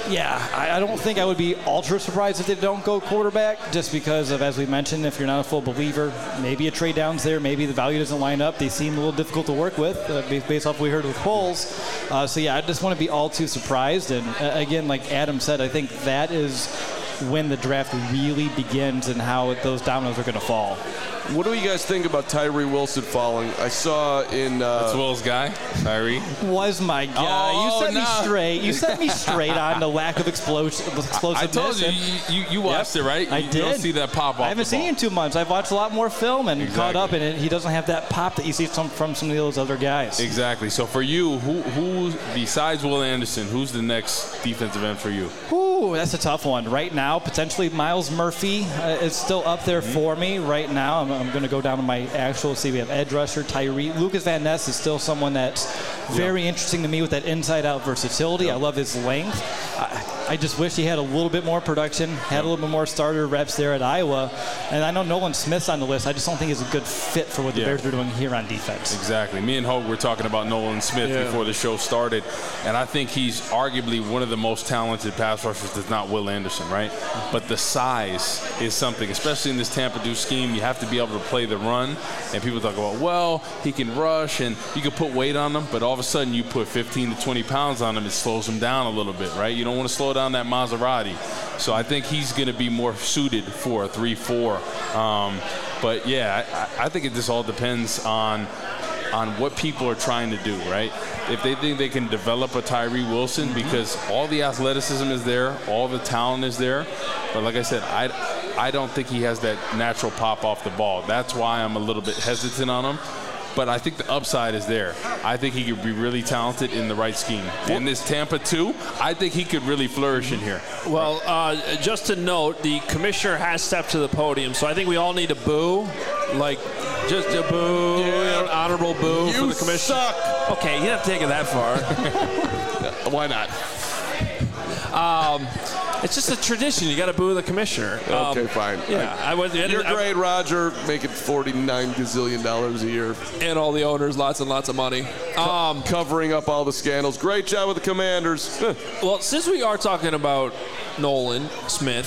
Yeah, I don't think I would be ultra surprised if they don't go quarterback, just because of, as we mentioned, if you're not a full believer, maybe a trade down's there, maybe the value doesn't line up. They seem a little difficult to work with, based off what we heard with Foles. So yeah, I just want to be all too surprised. And again, like Adam said, I think that is when the draft really begins and how those dominoes are going to fall. What do you guys think about Tyree Wilson falling? I saw in... That's Will's guy, Tyree. Was my guy. Oh, you set me straight. You set me straight on the lack of explosiveness. I told you watched it, right? I did. did. You don't see that pop off. I haven't seen it in 2 months. I've watched a lot more film and caught up in it. He doesn't have that pop that you see from some of those other guys. Exactly. So for you, who besides Will Anderson, who's the next defensive end for you? Ooh, that's a tough one. Right now, potentially Miles Murphy is still up there for me right now. I'm going to go down to my actual. See, we have edge rusher, Tyree. Lucas Van Ness is still someone that's very interesting to me with that inside-out versatility. I love his length. I just wish he had a little bit more production, had a little bit more starter reps there at Iowa. And I know Nolan Smith's on the list. I just don't think he's a good fit for what the Bears are doing here on defense. Exactly. Me and Hope were talking about Nolan Smith before the show started, and I think he's arguably one of the most talented pass rushers that's not Will Anderson, right? But the size is something, especially in this Tampa 2 scheme. You have to be able to play the run, and people talk about, well, he can rush and you can put weight on him, but all of a sudden you put 15 to 20 pounds on him, it slows him down a little bit, right? You don't want to slow down that Maserati. So I think he's going to be more suited for a 3-4. But yeah, I think it just all depends on what people are trying to do, right? If they think they can develop a Tyree Wilson, because all the athleticism is there, all the talent is there, but like I said, I don't think he has that natural pop off the ball. That's why I'm a little bit hesitant on him. But I think the upside is there. I think he could be really talented in the right scheme. In this Tampa 2, I think he could really flourish in here. Well, just to note, the commissioner has stepped to the podium, so I think we all need to boo. Like, just a boo, an honorable boo for the commissioner. Suck. Okay, you don't have to take it that far. Why not? It's just a tradition. You got to boo the commissioner. Okay, fine. Yeah, you're great, Roger. Making $49 gazillion a year, and all the owners lots and lots of money. Covering up all the scandals. Great job with the Commanders. Well, since we are talking about Nolan Smith,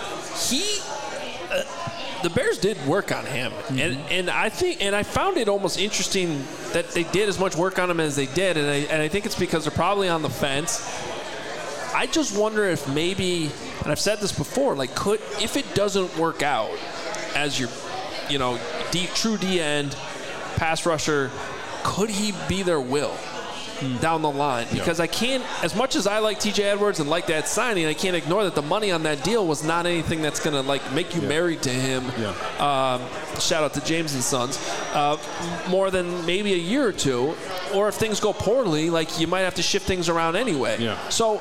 the Bears did work on him, and I found it almost interesting that they did as much work on him as they did, and I think it's because they're probably on the fence. I just wonder if maybe, and I've said this before, like if it doesn't work out as your, true D end pass rusher, could he be their Will down the line? Because I can't, as much as I like TJ Edwards and like that signing, I can't ignore that the money on that deal was not anything that's going to make you married to him. Shout out to James and Sons. More than maybe a year or two, or if things go poorly, you might have to shift things around anyway. So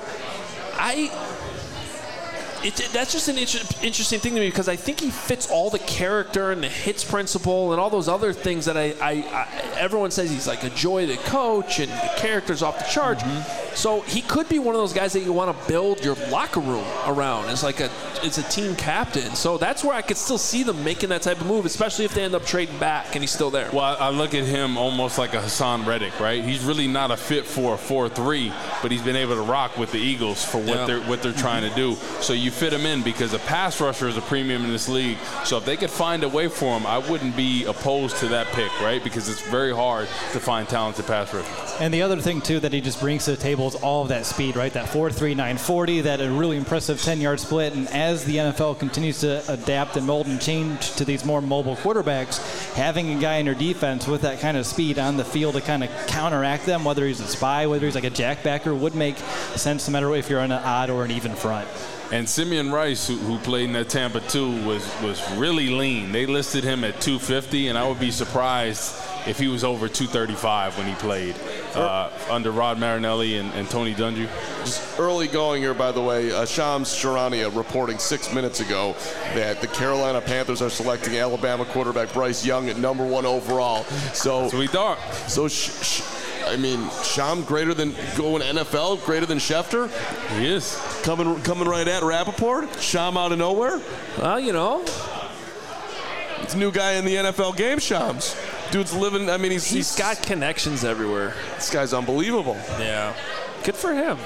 that's just an interesting thing to me, because I think he fits all the character and the hits principle and all those other things that everyone says he's like a joy to coach and the character's off the charts. So he could be one of those guys that you want to build your locker room around as it's a team captain. So that's where I could still see them making that type of move, especially if they end up trading back and he's still there. Well, I look at him almost like a Hassan Reddick, right? He's really not a fit for a 4-3, but he's been able to rock with the Eagles for what they're trying to do. So you fit him in because a pass rusher is a premium in this league. So if they could find a way for him, I wouldn't be opposed to that pick, right? Because it's very hard to find talented pass rushers. And the other thing, too, that he just brings to the table is all of that speed, right? That 4.3, 940, that a really impressive 10-yard split. And as the NFL continues to adapt and mold and change to these more mobile quarterbacks, having a guy in your defense with that kind of speed on the field to kind of counteract them, whether he's a spy, whether he's like a jackbacker, would make sense no matter if you're on an odd or an even front. And Simeon Rice, who played in that Tampa 2, was really lean. They listed him at 250, and I would be surprised if he was over 235 when he played under Rod Marinelli and Tony Dungy. Just early going here, by the way, Shams Charania reporting 6 minutes ago that the Carolina Panthers are selecting Alabama quarterback Bryce Young at number 1 overall. So we thought. So, Sham greater than going NFL, greater than Schefter? He is. Coming right at Rappaport? Sham out of nowhere? Well, it's a new guy in the NFL game, Shams. Dude's living, he's got connections everywhere. This guy's unbelievable. Yeah. Good for him.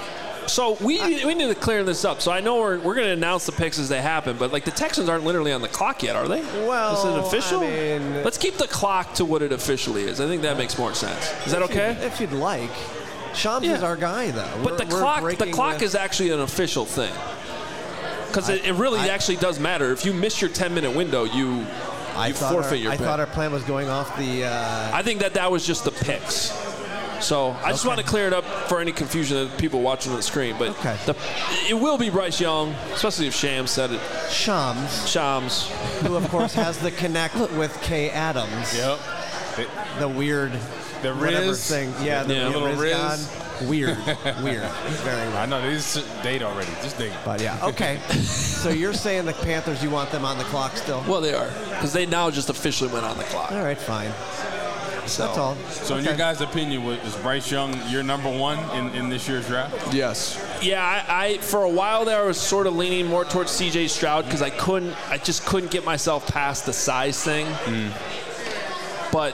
So we need to clear this up. So I know we're going to announce the picks as they happen, but like the Texans aren't literally on the clock yet, are they? Well, is it official? I mean, let's keep the clock to what it officially is. I think that makes more sense. Is that okay? If you'd like. Shams is our guy, though. But the clock is actually an official thing. Because it really actually does matter. If you miss your 10-minute window, you forfeit your pick. I thought our plan was going off the... I think that was just the picks. So I just want to clear it up for any confusion of people watching on the screen. But it will be Bryce Young, especially if Shams said it. Shams. Who, of course, has the connect with Kay Adams. Yep. The weird... The Riz thing. Yeah, the little Riz. Weird. Very weird. I know, this is date already. Just date. But yeah, okay. So you're saying the Panthers, you want them on the clock still? Well, they are. Because they now just officially went on the clock. All right, fine. So, that's all. So in your guys' opinion, is Bryce Young your number one in this year's draft? Yes. Yeah, I for a while there I was sort of leaning more towards C.J. Stroud because I just couldn't get myself past the size thing. But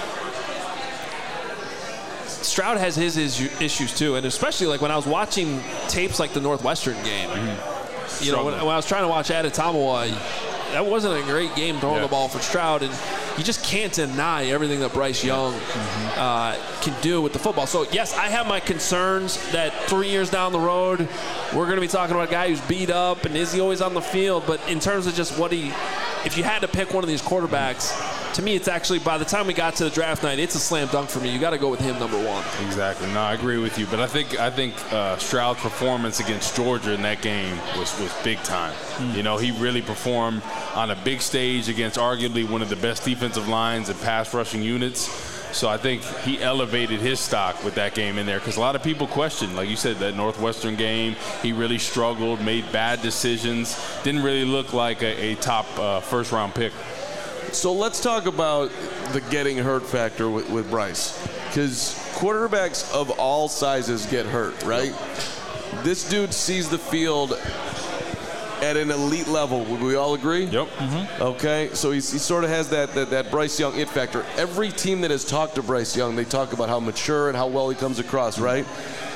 Stroud has his issues too, and especially like when I was watching tapes like the Northwestern game. You know, when I was trying to watch Adetomawa, that wasn't a great game throwing the ball for Stroud, and you just can't deny everything that Bryce Young can do with the football. So, yes, I have my concerns that 3 years down the road, we're going to be talking about a guy who's beat up, and is he always on the field? But in terms of just if you had to pick one of these quarterbacks, to me, it's actually, by the time we got to the draft night, it's a slam dunk for me. You got to go with him number one. Exactly. No, I agree with you. But I think Stroud's performance against Georgia in that game was big time. You know, he really performed on a big stage against arguably one of the best defensive lines and pass rushing units. So I think he elevated his stock with that game in there because a lot of people questioned, like you said, that Northwestern game. He really struggled, made bad decisions, didn't really look like a top first-round pick. So let's talk about the getting hurt factor with Bryce, because quarterbacks of all sizes get hurt, right? This dude sees the field at an elite level. Would we all agree? Yep. Okay, so he sort of has that Bryce Young it factor. Every team that has talked to Bryce Young, they talk about how mature and how well he comes across, right?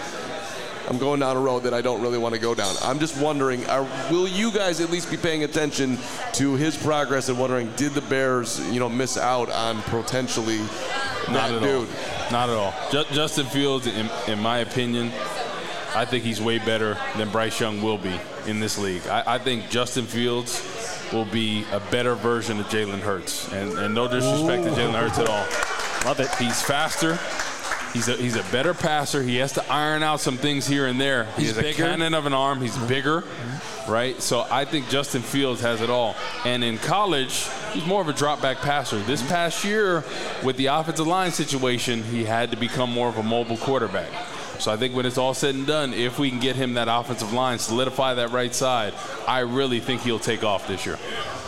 I'm going down a road that I don't really want to go down. I'm just wondering, will you guys at least be paying attention to his progress and wondering, did the Bears, miss out on potentially that dude? Not at all. Justin Fields, in my opinion, I think he's way better than Bryce Young will be in this league. I think Justin Fields will be a better version of Jalen Hurts. And no disrespect to Jalen Hurts at all. Love it. He's faster. He's a better passer. He has to iron out some things here and there. He has a cannon of an arm. He's bigger, right? So I think Justin Fields has it all. And in college, he's more of a drop-back passer. This past year, with the offensive line situation, he had to become more of a mobile quarterback. So I think when it's all said and done, if we can get him that offensive line, solidify that right side, I really think he'll take off this year.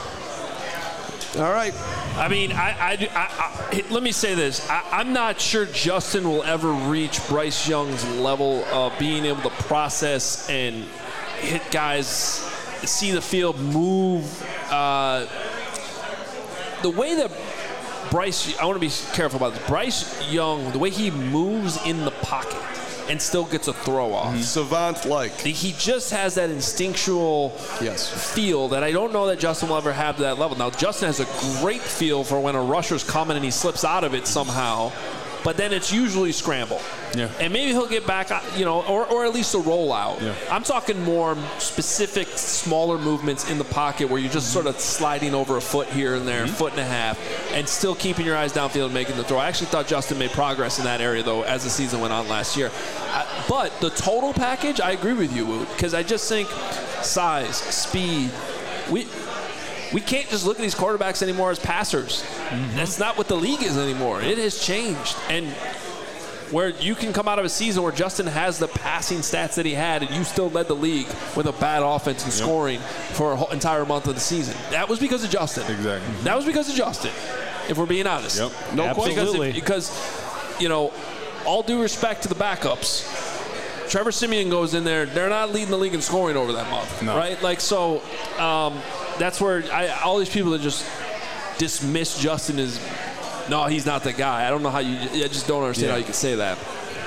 All right. I mean, let me say this. I'm not sure Justin will ever reach Bryce Young's level of being able to process and hit guys, see the field, move. The way that Bryce, I want to be careful about this. Bryce Young, the way he moves in the pocket and still gets a throw off. Savant-like. He just has that instinctual feel that I don't know that Justin will ever have to that level. Now, Justin has a great feel for when a rusher's coming and he slips out of it somehow, but then it's usually scramble. Yeah. And maybe he'll get back, or at least a rollout. Yeah. I'm talking more specific, smaller movements in the pocket where you're just sort of sliding over a foot here and there, foot and a half, and still keeping your eyes downfield and making the throw. I actually thought Justin made progress in that area, though, as the season went on last year. But the total package, I agree with you, Woot, because I just think size, speed, we can't just look at these quarterbacks anymore as passers. That's not what the league is anymore. It has changed. And where you can come out of a season where Justin has the passing stats that he had and you still led the league with a bad offense and scoring for an entire month of the season. That was because of Justin. Exactly. That was because of Justin, if we're being honest. Yep. No question. Because, all due respect to the backups, Trevor Siemian goes in there, they're not leading the league in scoring over that month, right? That's where all these people that just dismiss Justin as, no, he's not the guy. I don't know how I just don't understand how you can say that.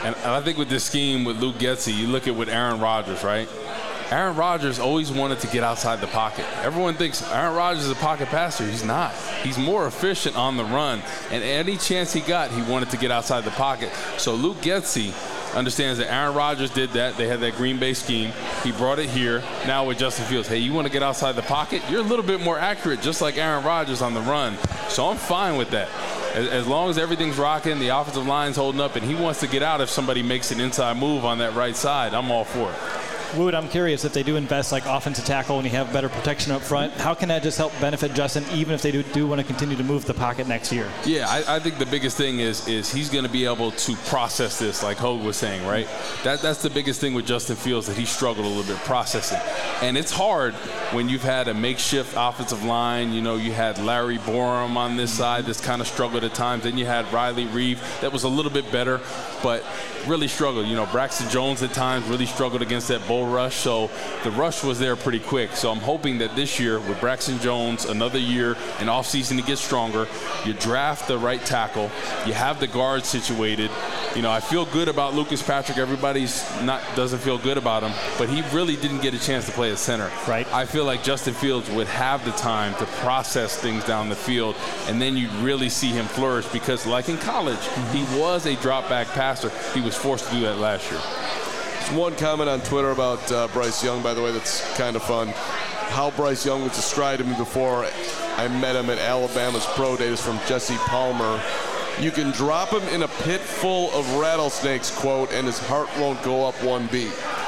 And I think with this scheme with Luke Getsy, you look at with Aaron Rodgers, right? Aaron Rodgers always wanted to get outside the pocket. Everyone thinks Aaron Rodgers is a pocket passer. He's not. He's more efficient on the run. And any chance he got, he wanted to get outside the pocket. So Luke Getsy understands that Aaron Rodgers did that. They had that Green Bay scheme. He brought it here. Now with Justin Fields, hey, you want to get outside the pocket? You're a little bit more accurate, just like Aaron Rodgers on the run. So I'm fine with that. As long as everything's rocking, the offensive line's holding up, and he wants to get out if somebody makes an inside move on that right side, I'm all for it. Wood, I'm curious, if they do invest like offensive tackle and you have better protection up front, how can that just help benefit Justin even if they do want to continue to move the pocket next year? Yeah, I think the biggest thing is he's going to be able to process this, like Hogue was saying, right? That's the biggest thing with Justin Fields, that he struggled a little bit processing. And it's hard when you've had a makeshift offensive line. You know, you had Larry Borum on this side that's kind of struggled at times. Then you had Riley Reeve that was a little bit better, but really struggled. You know, Braxton Jones at times really struggled against that bull rush. So the rush was there pretty quick. So I'm hoping that this year with Braxton Jones, another year, an offseason to get stronger, you draft the right tackle, you have the guard situated. You know, I feel good about Lucas Patrick. Everybody's doesn't feel good about him, but he really didn't get a chance to play at center. Right. I feel like Justin Fields would have the time to process things down the field, and then you really see him flourish because, like in college, he was a drop-back passer. He was forced to do that last year. There's one comment on Twitter about Bryce Young, by the way, that's kind of fun. How Bryce Young was described to me before I met him at Alabama's Pro Day is from Jesse Palmer. You can drop him in a pit full of rattlesnakes, quote, and his heart won't go up one beat.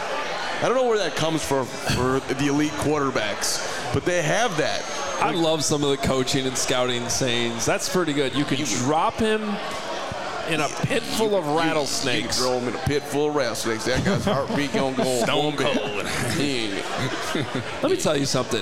I don't know where that comes from for the elite quarterbacks, but they have that. I love some of the coaching and scouting sayings. That's pretty good. You can drop him in a pit full of rattlesnakes. You can throw him in a pit full of rattlesnakes. That guy's heartbeat gonna go stone cold. Let me tell you something.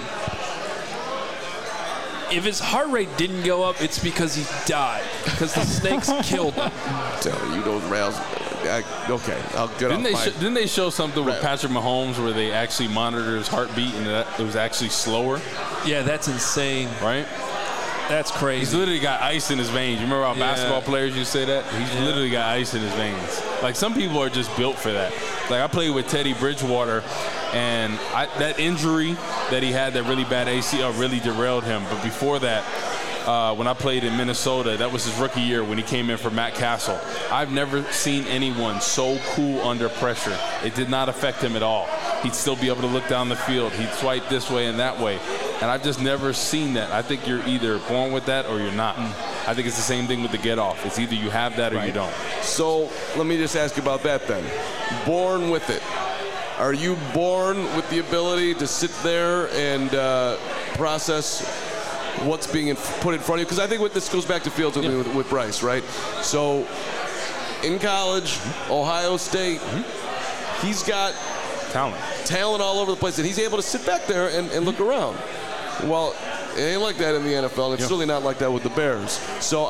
If his heart rate didn't go up, it's because he died. Because the snakes killed him. I'm telling you, those rattlesnakes. Okay, I'll get off Didn't they show something with Patrick Mahomes where they actually monitored his heartbeat and it was actually slower? Yeah, that's insane. Right? That's crazy. He's literally got ice in his veins. You remember how basketball players used to say that? He's literally got ice in his veins. Like, some people are just built for that. Like, I played with Teddy Bridgewater, and that injury that he had, that really bad ACL, really derailed him. But before that, when I played in Minnesota, that was his rookie year when he came in for Matt Castle. I've never seen anyone so cool under pressure. It did not affect him at all. He'd still be able to look down the field. He'd swipe this way and that way. And I've just never seen that. I think you're either born with that or you're not. I think it's the same thing with the get off. It's either you have that or you don't. So let me just ask you about that then. Born with it. Are you born with the ability to sit there and process what's being put in front of you? Because I think this goes back to Fields with Bryce, right? So in college, Ohio State, he's got talent all over the place, and he's able to sit back there and look around. Well, it ain't like that in the NFL, and it's really not like that with the Bears. So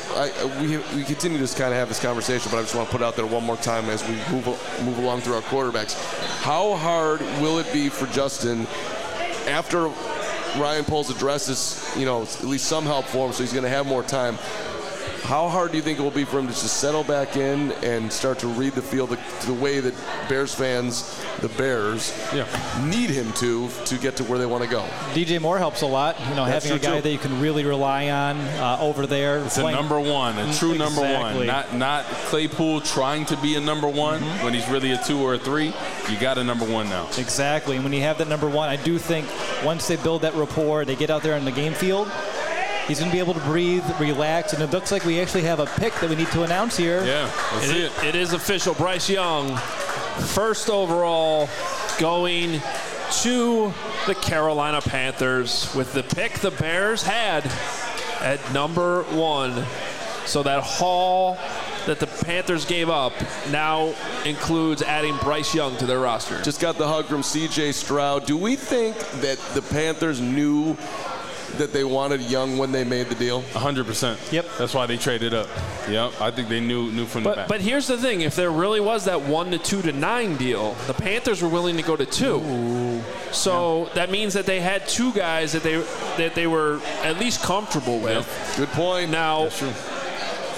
we continue to kind of have this conversation, but I just want to put it out there one more time as we move along through our quarterbacks. How hard will it be for Justin after Ryan Poles addresses, at least some help for him, so he's going to have more time? How hard do you think it will be for him to just settle back in and start to read the field the way that Bears fans, the Bears, need him to get to where they want to go? DJ Moore helps a lot. Having a guy that you can really rely on over there. It's a number one, a true number one. Not Claypool trying to be a number one when he's really a 2 or a 3. You got a number one now. Exactly. And when you have that number one, I do think once they build that rapport, they get out there in the game field, he's going to be able to breathe, relax, and it looks like we actually have a pick that we need to announce here. Yeah, let's see it. It is official. Bryce Young, first overall, going to the Carolina Panthers with the pick the Bears had at number 1. So that haul that the Panthers gave up now includes adding Bryce Young to their roster. Just got the hug from C.J. Stroud. Do we think that the Panthers knew that they wanted Young when they made the deal? 100%. Yep. That's why they traded up. Yep. I think they knew from the back. But here's the thing. If there really was that 1 to 2 to 9 deal, the Panthers were willing to go to 2. Ooh. So that means that they had 2 guys that they were at least comfortable with. Yep. Good point. Now, that's true.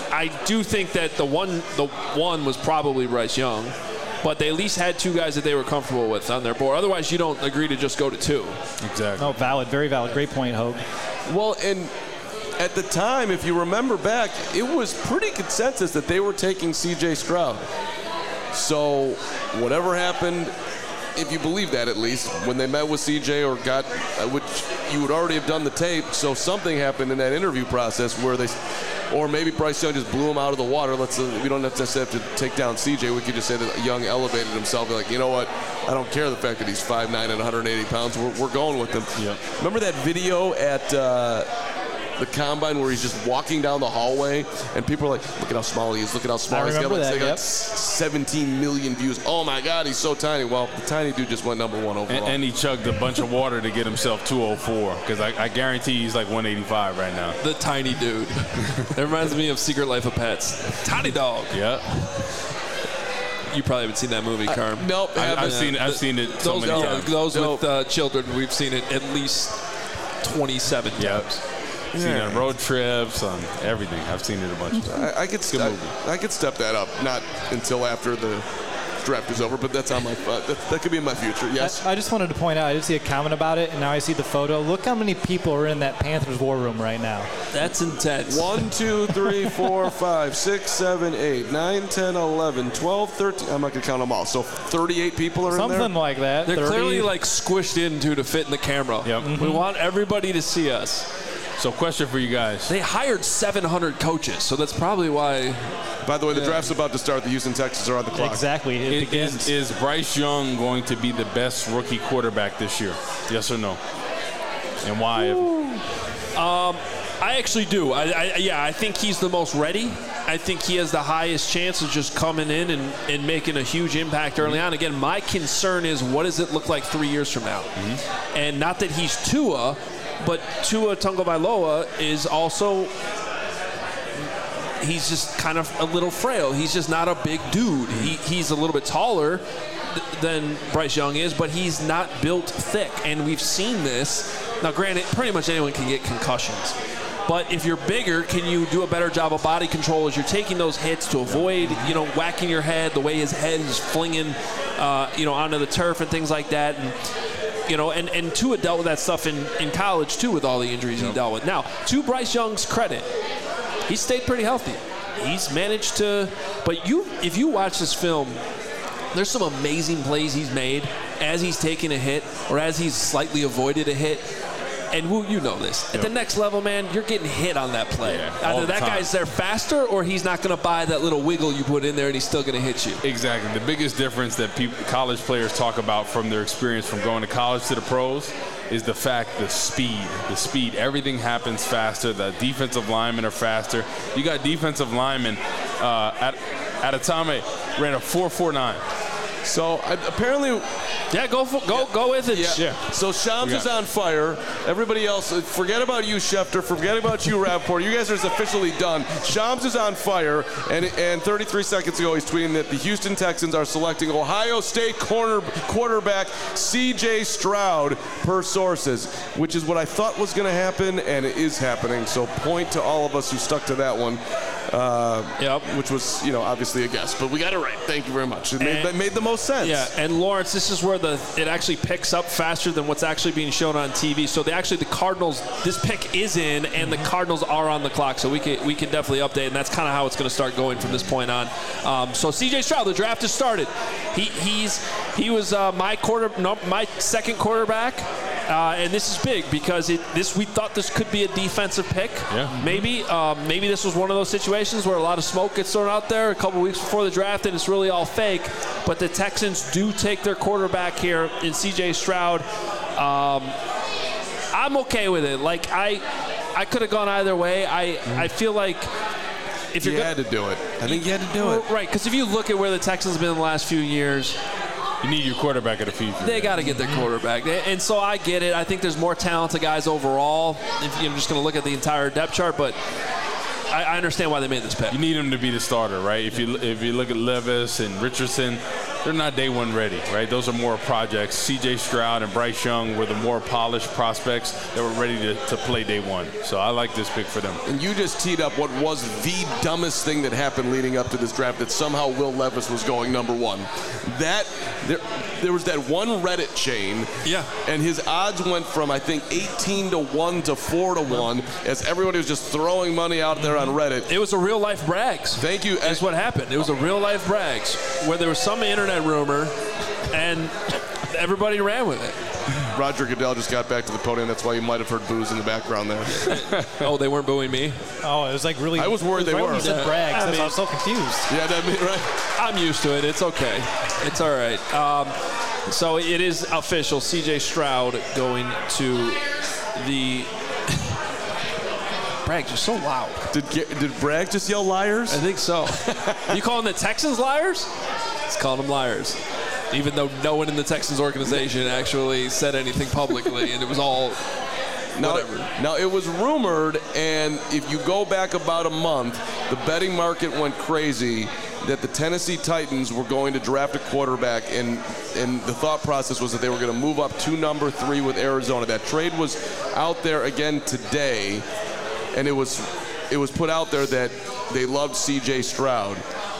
I do think that the one was probably Bryce Young, but they at least had two guys that they were comfortable with on their board. Otherwise, you don't agree to just go to two. Exactly. No, valid, very valid. Great point, Hogue. Well, and at the time, if you remember back, it was pretty consensus that they were taking C.J. Stroud. So whatever happened, if you believe that at least, when they met with C.J. or got, which you would already have done the tape, so something happened in that interview process where they, or maybe Bryce Young just blew him out of the water. We don't necessarily have to take down C.J. We could just say that Young elevated himself. Be like, you know what? I don't care the fact that he's 5'9" and 180 pounds. We're going with him. Yep. Remember that video at the Combine where he's just walking down the hallway and people are like, look at how small he is. Look at how small he is. I remember that, They got yep. 17 million views. Oh, my God, he's so tiny. Well, the tiny dude just went number one overall. And he chugged a bunch of water to get himself 204 because I guarantee he's like 185 right now. The tiny dude. That reminds me of Secret Life of Pets. Tiny dog. Yeah. You probably haven't seen that movie, Carm. Nope. I've seen it so many times. Those with children, we've seen it at least 27 times. I've seen it on road trips, on everything. I've seen it a bunch of times. I could step that up, not until after the draft is over, but that's on my that could be in my future. Yes. I just wanted to point out, I did see a comment about it, and now I see the photo. Look how many people are in that Panthers war room right now. That's intense. 1, 2, 3, 4, 5, 6, 7, 8, 9, 10, 11, 12, 13. I'm not going to count them all. So 38 people are in there? Something like that. They're 30. clearly like squished into to fit in the camera. Yep. Mm-hmm. We want everybody to see us. So question for you guys. They hired 700 coaches, so that's probably why. By the way, the draft's about to start. The Houston Texans are on the clock. Exactly. It begins. Is Bryce Young going to be the best rookie quarterback this year? Yes or no? And why? I actually do. I think he's the most ready. I think he has the highest chance of just coming in and making a huge impact early on. Again, my concern is what does it look like 3 years from now? Mm-hmm. And not that he's Tua, but Tua Tagovailoa is also, he's just kind of a little frail. He's just not a big dude. He's a little bit taller than Bryce Young is, but he's not built thick. And we've seen this. Now, granted, pretty much anyone can get concussions. But if you're bigger, can you do a better job of body control as you're taking those hits to avoid, whacking your head, the way his head is flinging, onto the turf and things like that. And Tua dealt with that stuff in college, too, with all the injuries he dealt with. Now, to Bryce Young's credit, he stayed pretty healthy. He's managed to – but if you watch this film, there's some amazing plays he's made as he's taken a hit or as he's slightly avoided a hit. And you know this. At the next level, man, you're getting hit on that play. Either that guy's there faster or he's not going to buy that little wiggle you put in there and he's still going to hit you. Exactly. The biggest difference that college players talk about from their experience from going to college to the pros is the speed. Everything happens faster. The defensive linemen are faster. You got defensive linemen at a time ran a 4.49. So apparently, go with it. Yeah. So Shams is on fire. Everybody else, forget about you, Schefter. Forget about you, Rappaport. You guys are officially done. Shams is on fire, and 33 seconds ago, he's tweeting that the Houston Texans are selecting Ohio State quarterback C.J. Stroud per sources, which is what I thought was going to happen, and it is happening. So point to all of us who stuck to that one. Which was, obviously a guess, but we got it right. Thank you very much. It made the most sense. Yeah, and Lawrence, this is where it actually picks up faster than what's actually being shown on TV. So the Cardinals, this pick is in, and the Cardinals are on the clock. So we can definitely update, and that's kind of how it's going to start going from this point on. So C.J. Stroud, the draft has started. He was my second quarterback. And this is big because we thought this could be a defensive pick. Yeah. Maybe this was one of those situations where a lot of smoke gets thrown out there a couple weeks before the draft and it's really all fake. But the Texans do take their quarterback here in C.J. Stroud. I'm okay with it. Like I could have gone either way. I feel like if you had to do it. I think you had to do it. Right, because if you look at where the Texans have been in the last few years, you need your quarterback at a future. They got to get their quarterback. And so I get it. I think there's more talented guys overall. If I'm just going to look at the entire depth chart, but I understand why they made this pick. You need him to be the starter, right? If you look at Levis and Richardson, they're not day one ready, right? Those are more projects. C.J. Stroud and Bryce Young were the more polished prospects that were ready to play day one. So I like this pick for them. And you just teed up what was the dumbest thing that happened leading up to this draft, that somehow Will Levis was going number one. There was that one Reddit chain, and his odds went from, I think, 18-1 to 4-1, as everybody was just throwing money out there on Reddit. It was a real-life brags. Thank you. That's what happened. It was a real-life brags, where there was some internet rumor, and everybody ran with it. Roger Goodell just got back to the podium. That's why you might have heard boos in the background there. Oh, they weren't booing me? Oh, it was like really. I was worried they were. You said brags. I was so confused. Yeah, right. I'm used to it. It's okay. It's all right. So it is official. C.J. Stroud going to the. Braggs, you're so loud. Did Bragg just yell liars? I think so. You calling the Texans liars? He's calling them liars. Even though no one in the Texans organization actually said anything publicly, and it was all whatever. Now, it was rumored, and if you go back about a month, the betting market went crazy that the Tennessee Titans were going to draft a quarterback, and the thought process was that they were going to move up to number 3 with Arizona. That trade was out there again today, and it was put out there that they loved C.J. Stroud.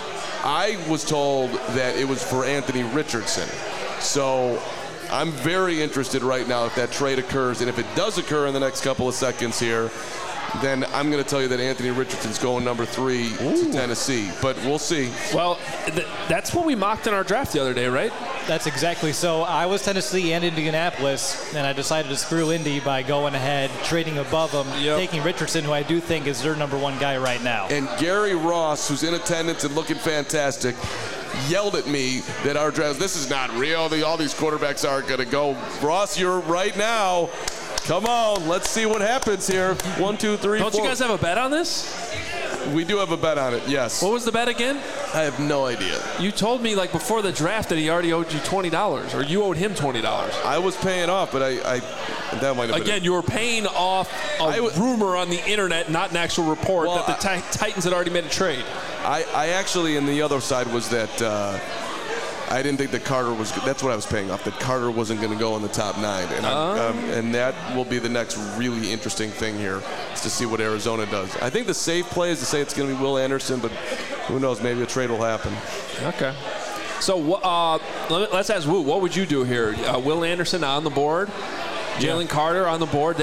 I was told that it was for Anthony Richardson. So I'm very interested right now if that trade occurs. And if it does occur in the next couple of seconds here, then I'm going to tell you that Anthony Richardson's going number 3 to Tennessee. But we'll see. Well, that's what we mocked in our draft the other day, right? That's exactly. So I was Tennessee and Indianapolis, and I decided to screw Indy by going ahead, trading above them, taking Richardson, who I do think is their number 1 guy right now. And Gary Ross, who's in attendance and looking fantastic, yelled at me that our draft, this is not real. All these quarterbacks aren't going to go. Ross, you're right now. Come on, let's see what happens here. 1, 2, 3, 4. Don't you guys have a bet on this? We do have a bet on it, yes. What was the bet again? I have no idea. You told me before the draft that he already owed you $20, or you owed him $20. I was paying off, but that might have been again. You were paying off a rumor on the internet, not an actual report that the Titans had already made a trade. I actually, in the other side, was that I didn't think that Carter was. That's what I was paying off. That Carter wasn't going to go in the top 9, and that will be the next really interesting thing here, is to see what Arizona does. I think the safe play is to say it's going to be Will Anderson, but who knows? Maybe a trade will happen. Okay. So let's ask Woo. What would you do here? Will Anderson on the board. Jalen Carter on the board.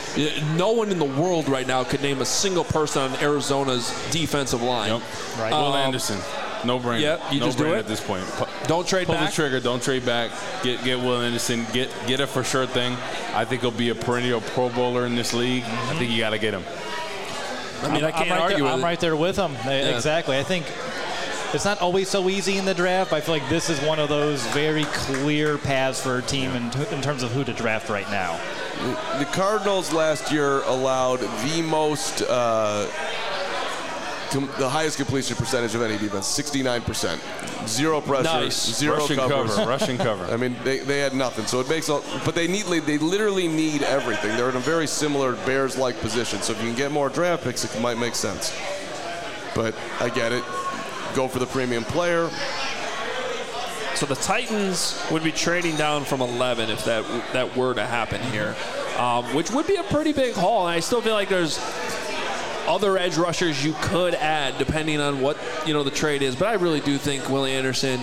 No one in the world right now could name a single person on Arizona's defensive line. Yep. Right. Will Anderson. No brainer. Yep, you no just brainer do it at this point. Don't trade back. Pull the trigger. Don't trade back. Get Will Anderson. Get a for sure thing. I think he'll be a perennial Pro Bowler in this league. I think you got to get him. I mean, I can't argue with it. I'm right there with him. Yeah. Exactly. I think it's not always so easy in the draft. I feel like this is one of those very clear paths for a team in terms of who to draft right now. The Cardinals last year allowed the most. The highest completion percentage of any defense, 69%. Zero pressure, nice. Zero Rushing cover. Rushing cover. I mean, they had nothing. So it makes, but they literally need everything. They're in a very similar Bears-like position. So if you can get more draft picks, it might make sense. But I get it. Go for the premium player. So the Titans would be trading down from 11 if that were to happen here, which would be a pretty big haul. And I still feel like there's other edge rushers you could add depending on what the trade is, but I really do think Willie Anderson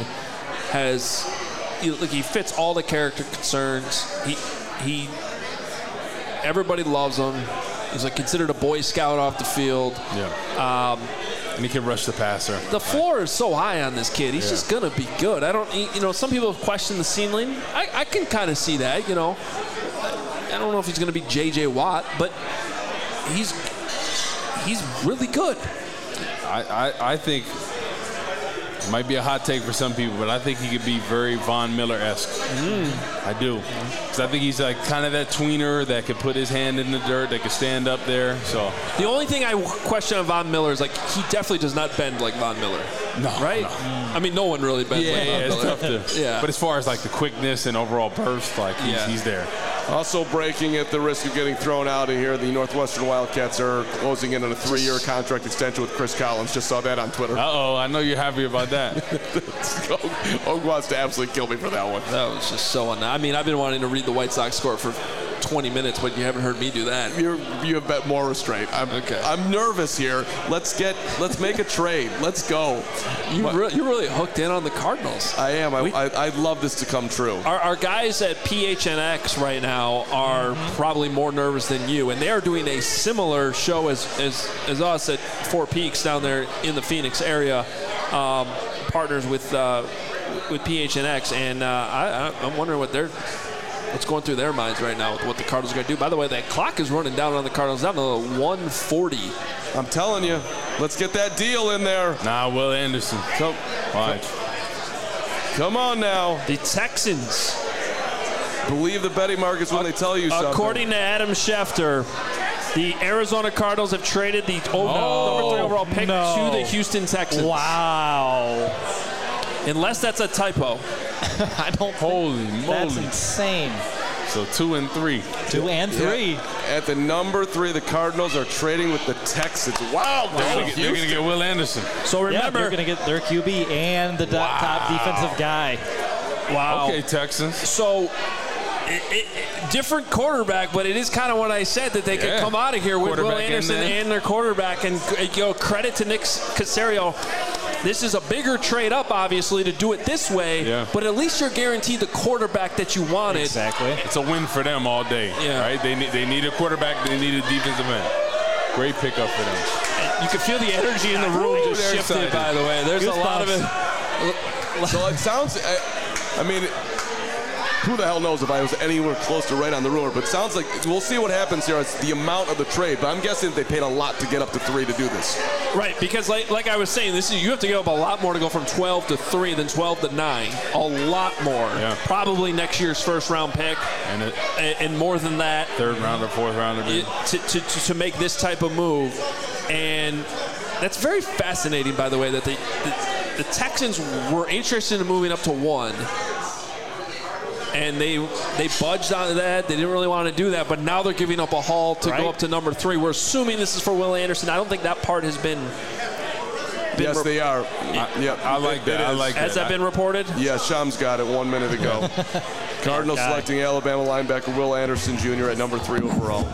he fits all the character concerns. He everybody loves him. He's considered a Boy Scout off the field. Yeah. And he can rush the passer. The floor is so high on this kid. He's just gonna be good. I don't some people question the ceiling. I can kind of see that. I don't know if he's gonna be J.J. Watt, but he's really good. I think it might be a hot take for some people, but I think he could be very Von Miller-esque. I do. Because I think he's kind of that tweener that could put his hand in the dirt, that could stand up there. So the only thing I question on Von Miller is he definitely does not bend like Von Miller. No. Right? No. I mean, no one really bends like Von Miller. It's tough to. Yeah. But as far as the quickness and overall burst, he's there. Also breaking at the risk of getting thrown out of here, the Northwestern Wildcats are closing in on a 3-year contract extension with Chris Collins. Just saw that on Twitter. Uh-oh, I know you're happy about that. Og wants to absolutely kill me for that one. That was just so I mean, I've been wanting to read the White Sox score for 20 minutes, but you haven't heard me do that. You have bet more restraint. I'm nervous here. Let's make a trade. Let's go. You're really hooked in on the Cardinals. I am. I'd love this to come true. Our guys at PHNX right now are probably more nervous than you, and they are doing a similar show as us at Four Peaks down there in the Phoenix area, partners with PHNX, and I'm wondering what's going through their minds right now with what the Cardinals are going to do. By the way, that clock is running down on the Cardinals, down to 1:40. I'm telling you, let's get that deal in there. Nah, Will Anderson. Come on now. The Texans. Believe the betting markets when they tell you something. According to Adam Schefter, the Arizona Cardinals have traded the number 3 overall pick to the Houston Texans. Wow. Unless that's a typo. I don't Holy think moly. that's insane. So 2 and 3. 2 and 3. Yeah. At the number 3, the Cardinals are trading with the Texans. Wow. They're going to get Will Anderson. So remember, they're going to get their QB and the top defensive guy. Wow. Okay, Texans. So different quarterback, but it is kind of what I said, that they could come out of here with Will Anderson and their quarterback. And credit to Nick Caserio. This is a bigger trade up, obviously, to do it this way, but at least you're guaranteed the quarterback that you wanted. Exactly. It's a win for them all day, right? They need a quarterback. They need a defensive end. Great pickup for them. And you can feel the energy in the room just shifted, excited. By the way. There's a lot of it. So it sounds, I mean, who the hell knows if I was anywhere close to right on the rumor, but it sounds like we'll see what happens here. It's the amount of the trade, but I'm guessing they paid a lot to get up to 3 to do this. Right, because like I was saying, you have to give up a lot more to go from 12 to 3 than 12 to 9. A lot more. Yeah. Probably next year's first-round pick, and more than that. Third rounder, fourth rounder. To make this type of move, and that's very fascinating, by the way, that the Texans were interested in moving up to 1. And they budged on that. They didn't really want to do that, but now they're giving up a haul to go up to number 3. We're assuming this is for Will Anderson. I don't think that part has been yes, they are. I like that. Has that been reported? Yeah, Shams got it 1 minute ago. Cardinals selecting Alabama linebacker Will Anderson Jr. at number 3 overall.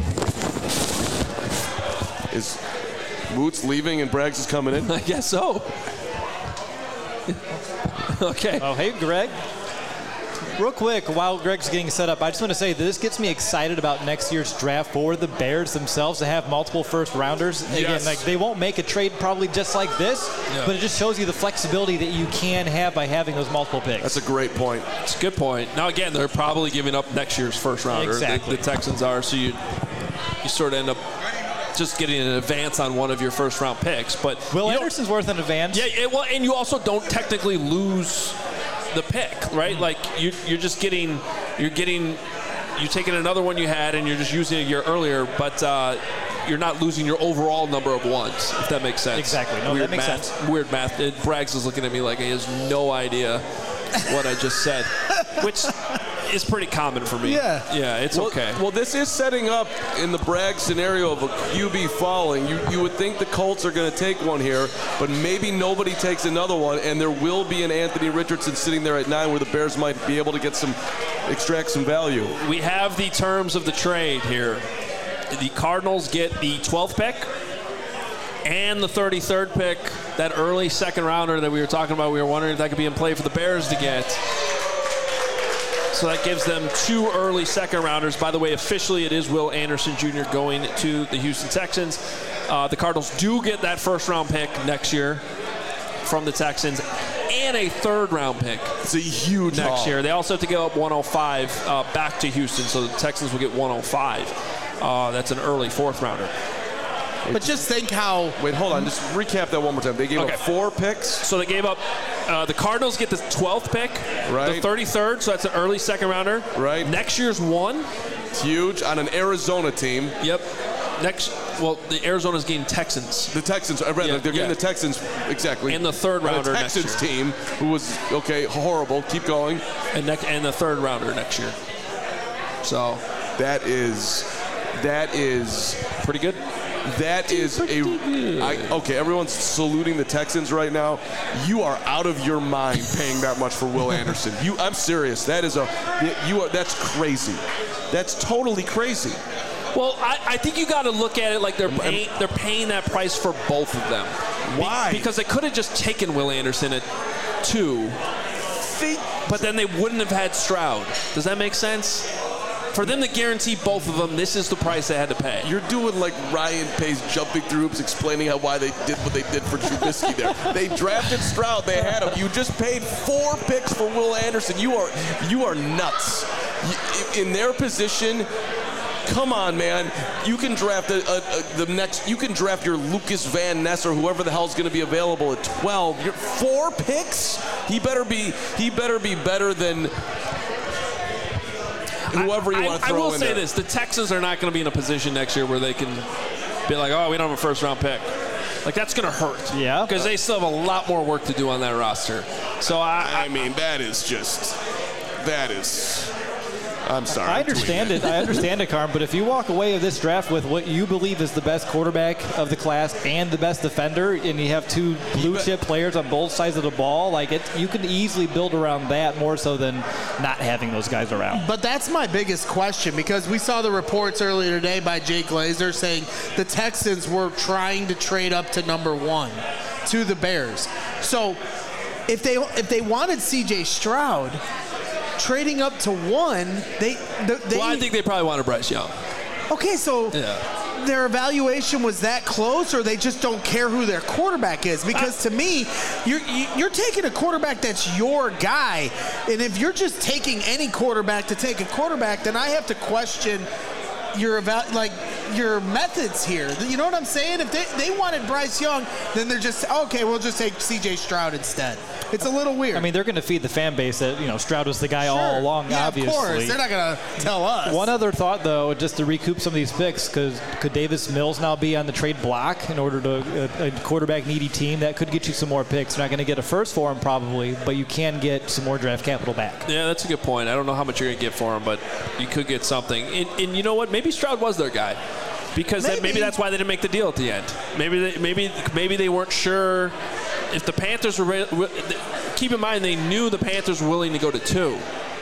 Is Boots leaving and Braggs is coming in? I guess so. Okay. Oh, hey, Greg. Real quick, while Greg's getting set up, I just want to say that this gets me excited about next year's draft for the Bears themselves to have multiple first-rounders. Again, they won't make a trade probably just like this, but it just shows you the flexibility that you can have by having those multiple picks. That's a great point. It's a good point. Now, again, they're probably giving up next year's first-rounder. Exactly. The Texans are, so you sort of end up just getting an advance on one of your first-round picks. But Will Anderson's worth an advance. Yeah, well, and you also don't technically lose the pick, right? Like you're taking another one you had and you're just using it a year earlier, but you're not losing your overall number of ones, if that makes sense. Exactly. No, that makes sense. Weird math. Braggs is looking at me like he has no idea what I just said, which is pretty common for me. Yeah, it's okay. Well, this is setting up in the Bragg scenario of a QB falling. You would think the Colts are going to take one here, but maybe nobody takes another one, and there will be an Anthony Richardson sitting there at 9 where the Bears might be able to extract some value. We have the terms of the trade here. The Cardinals get the 12th pick and the 33rd pick, that early second rounder that we were talking about. We were wondering if that could be in play for the Bears to get. So that gives them 2 early second rounders. By the way, officially it is Will Anderson Jr. going to the Houston Texans. The Cardinals do get that first round pick next year from the Texans and a 3rd round pick. It's a huge next year. They also have to give up 105 back to Houston, so the Texans will get 105. That's an early 4th rounder. But just think how... Wait, hold on. Just recap that one more time. They gave up 4 picks? So they gave up... the Cardinals get the 12th pick. Right. The 33rd, so that's an early second rounder. Right. Next year's 1. It's huge on an Arizona team. Yep. The Arizona's getting Texans. The Texans. I read that. They're getting the Texans, exactly. And the 3rd rounder next year. The Texans team, who was, horrible. Keep going. And the 3rd rounder next year. So that is pretty good. That is okay, everyone's saluting the Texans right now. You are out of your mind paying that much for Will Anderson. I'm serious. That's crazy. That's totally crazy. Well, I think you got to look at it like they're paying that price for both of them. Why? Because they could have just taken Will Anderson at 2, but then they wouldn't have had Stroud. Does that make sense? For them to guarantee both of them, this is the price they had to pay. You're doing like Ryan Pace jumping through hoops, explaining why they did what they did for Trubisky there. They drafted Stroud. They had him. You just paid 4 picks for Will Anderson. You are nuts. In their position, come on, man. You can draft you can draft your Lucas Van Ness or whoever the hell's going to be available at 12. You're 4 picks? He better be better than whoever you want to throw in there. I will say this. The Texans are not going to be in a position next year where they can be like, oh, we don't have a first-round pick. Like, that's going to hurt. Yeah. Because they still have a lot more work to do on that roster. So, I mean, that is I'm sorry. I understand it, Carm, but if you walk away of this draft with what you believe is the best quarterback of the class and the best defender, and you have 2 blue-chip players on both sides of the ball, you can easily build around that more so than not having those guys around. But that's my biggest question, because we saw the reports earlier today by Jake Glazer saying the Texans were trying to trade up to number 1 to the Bears. So if they wanted C.J. Stroud, trading up to 1, I think they probably wanted Bryce Young. Okay, so their evaluation was that close, or they just don't care who their quarterback is? Because to me, you're taking a quarterback that's your guy, and if you're just taking any quarterback to take a quarterback, then I have to question your methods here. You know what I'm saying? If they wanted Bryce Young, then they're just, okay, we'll just take C.J. Stroud instead. It's a little weird. I mean, they're going to feed the fan base that, Stroud was the guy all along, obviously. Of course. They're not going to tell us. One other thought, though, just to recoup some of these picks, because could Davis Mills now be on the trade block in order to a quarterback-needy team? That could get you some more picks. You're not going to get a first for him, probably, but you can get some more draft capital back. Yeah, that's a good point. I don't know how much you're going to get for him, but you could get something. And you know what? Maybe Stroud was their guy. Because maybe that's why they didn't make the deal at the end. Maybe they weren't sure if the Panthers were. Keep in mind, they knew the Panthers were willing to go to 2,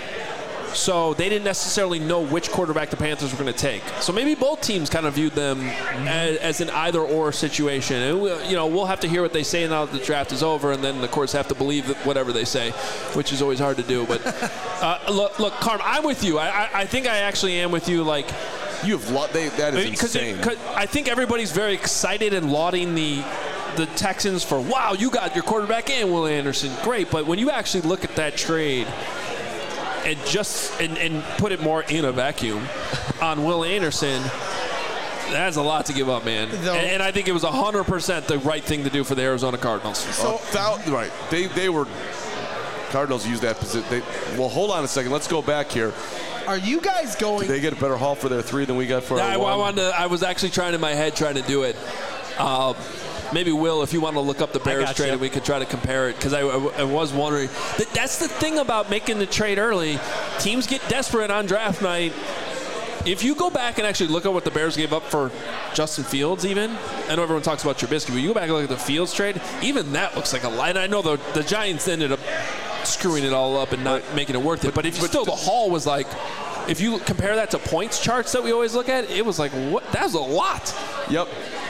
so they didn't necessarily know which quarterback the Panthers were going to take. So maybe both teams kind of viewed them as an either-or situation. And we'll have to hear what they say now that the draft is over, and then of course have to believe whatever they say, which is always hard to do. But look, Carm, I'm with you. I think I actually am with you. Like. That is insane. I think everybody's very excited and lauding the Texans for, wow, you got your quarterback and Will Anderson. Great. But when you actually look at that trade and and put it more in a vacuum on Will Anderson, that's a lot to give up, man. And I think it was 100% the right thing to do for the Arizona Cardinals. Right. They were – Cardinals used that position. Well, hold on a second. Let's go back here. Are you guys going? Did they get a better haul for their 3 than we got for our 1? I was actually trying in my head trying to do it. Maybe Will, if you want to look up the Bears trade, and we could try to compare it, because I was wondering. That's the thing about making the trade early. Teams get desperate on draft night. If you go back and actually look at what the Bears gave up for Justin Fields, even, I know everyone talks about Trubisky, but you go back and look at the Fields trade, even that looks like a lie. And I know the Giants ended up screwing it all up and not making it worth it. But the haul was like, if you compare that to points charts that we always look at, it was like, what? That was a lot. Yep.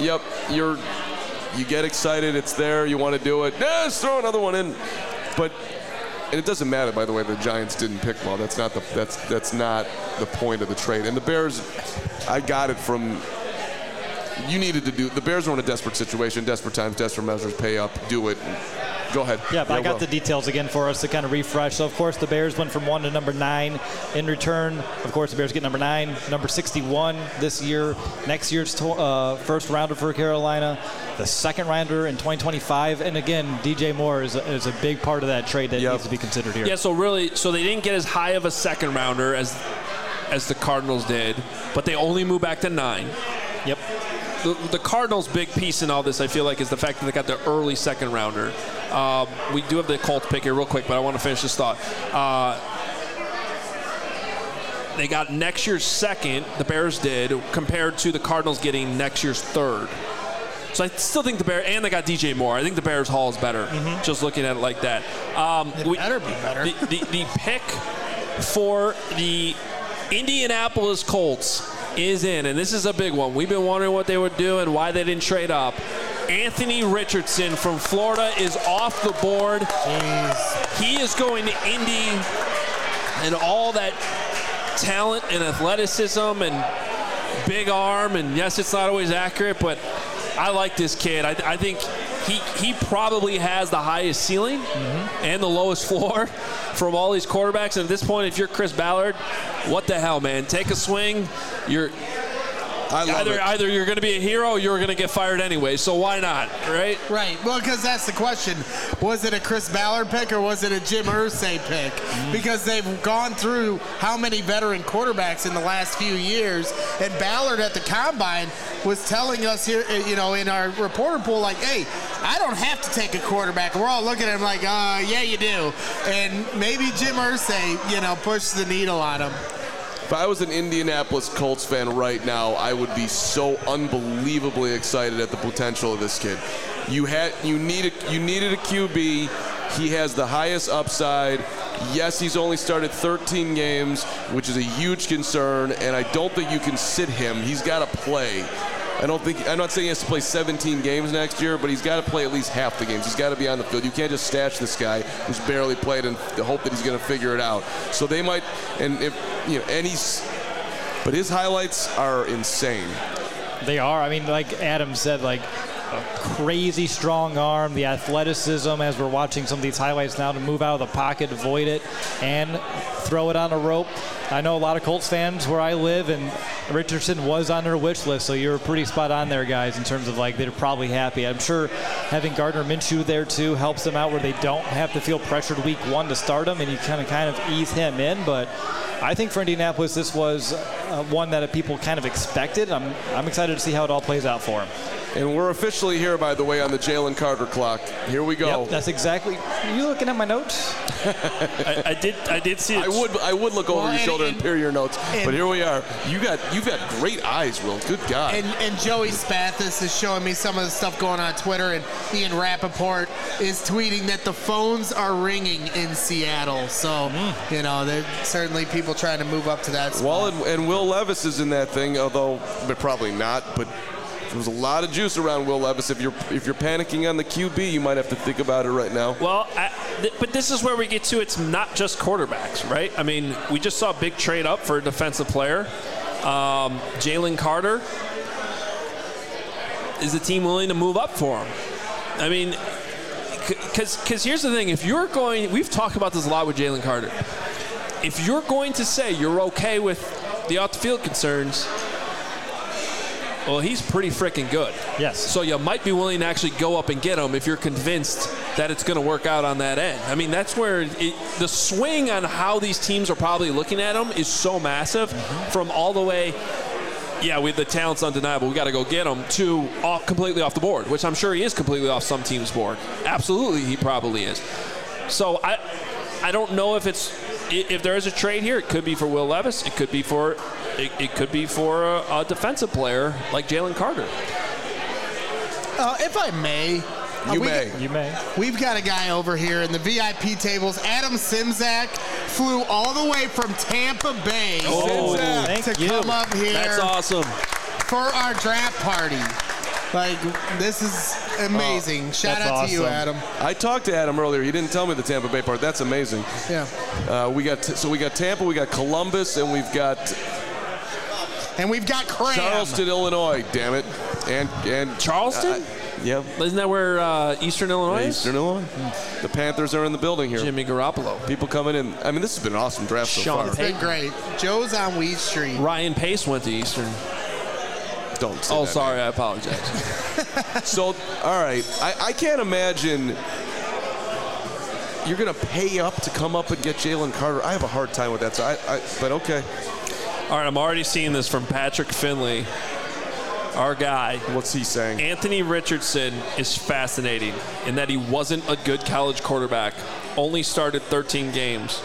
You get excited. It's there. You want to do it. Let's throw another one in. And it doesn't matter, by the way, the Giants didn't pick well. That's not the point of the trade. And the Bears, I got it from. You needed to do. The Bears were in a desperate situation, desperate times, desperate measures. Pay up, do it. Go ahead. Yeah, but I got the details again for us to kind of refresh. So, of course, the Bears went from 1 to number 9. In return, of course, the Bears get number 9, number 61 this year. Next year's first rounder for Carolina, the second rounder in 2025. And, again, DJ Moore is a big part of that trade that needs to be considered here. Yeah, so they didn't get as high of a second rounder as the Cardinals did, but they only moved back to 9. Yep. The Cardinals' big piece in all this, I feel like, is the fact that they got the early second rounder. We do have the Colts pick here real quick, but I want to finish this thought. they got next year's second, the Bears did, compared to the Cardinals getting next year's third. So I still think the Bears, and they got DJ Moore. I think the Bears haul is better, just looking at it like that. It better be better. The pick for the Indianapolis Colts is in, and this is a big one. We've been wondering what they would do and why they didn't trade up. Anthony Richardson from Florida is off the board. Jeez. He is going to Indy, and all that talent and athleticism and big arm, and yes, it's not always accurate, but I like this kid. I think he probably has the highest ceiling and the lowest floor from all these quarterbacks. And at this point, if you're Chris Ballard, what the hell, man? Take a swing. Either you're going to be a hero or you're going to get fired anyway. So why not, right? Right. Well, because that's the question. Was it a Chris Ballard pick or was it a Jim Irsay pick? Because they've gone through how many veteran quarterbacks in the last few years. And Ballard at the Combine was telling us here, in our reporter pool, like, hey, I don't have to take a quarterback. We're all looking at him like, yeah, you do. And maybe Jim Irsay, pushed the needle on him. If I was an Indianapolis Colts fan right now, I would be so unbelievably excited at the potential of this kid. You needed a QB. He has the highest upside. Yes, he's only started 13 games, which is a huge concern, and I don't think you can sit him. He's got to play. I'm not saying he has to play 17 games next year, but he's got to play at least half the games. He's got to be on the field. You can't just stash this guy who's barely played and hope that he's going to figure it out. So they might, but his highlights are insane. They are. I mean, like Adam said, like a crazy strong arm, the athleticism as we're watching some of these highlights now to move out of the pocket, avoid it, and throw it on a rope. I know a lot of Colts fans where I live, and Richardson was on their wish list, so you're pretty spot on there, guys, in terms of like they're probably happy. I'm sure having Gardner Minshew there too helps them out where they don't have to feel pressured week one to start him, and you kind of ease him in. But I think for Indianapolis, this was one that people kind of expected. I'm excited to see how it all plays out for him. And we're officially here, by the way, on the Jalen Carter clock. Here we go. Yep, that's exactly. Are you looking at my notes? I did see it. I would look over your shoulder and peer your notes, but here we are. You've got great eyes, Will. Good God. And Joey Spathis is showing me some of the stuff going on Twitter, and Ian Rappaport is tweeting that the phones are ringing in Seattle. So, there's certainly people trying to move up to that spot. Well, and Will Levis is in that thing, although probably not, but there's a lot of juice around Will Levis. If you're panicking on the QB, you might have to think about it right now. Well, but this is where we get to it's not just quarterbacks, right? I mean, we just saw a big trade up for a defensive player. Jalen Carter. Is the team willing to move up for him? I mean, because here's the thing. If you're going, we've talked about this a lot with Jalen Carter. If you're going to say you're okay with the off-the-field concerns, well, he's pretty freaking good. Yes. So you might be willing to actually go up and get him if you're convinced that it's going to work out on that end. I mean, that's where the swing on how these teams are probably looking at him is so massive from all the way, the talent's undeniable, we got to go get him, to completely off the board, which I'm sure he is completely off some team's board. Absolutely, he probably is. So I don't know if there is a trade here. It could be for Will Levis. It could be for a defensive player like Jalen Carter. If I may. You may. We've got a guy over here in the VIP tables. Adam Simzak flew all the way from Tampa Bay to come up here. That's awesome. For our draft party. Like, this is amazing. Shout out to you, Adam. I talked to Adam earlier. He didn't tell me the Tampa Bay part. That's amazing. Yeah. We got Tampa, we got Columbus, and we've got Cram. Charleston, Illinois. Damn it. And Charleston? Yeah. Isn't that where Eastern Illinois is? Eastern Illinois. The Panthers are in the building here. Jimmy Garoppolo. People coming in. I mean, this has been an awesome draft so far. It's been great. Joe's on Weed Street. Ryan Pace went to Eastern. Don't say that. Sorry. I apologize. So, all right. I can't imagine you're going to pay up to come up and get Jalen Carter. I have a hard time with that. But okay. All right. I'm already seeing this from Patrick Finley. Our guy. What's he saying? Anthony Richardson is fascinating in that he wasn't a good college quarterback. Only started 13 games.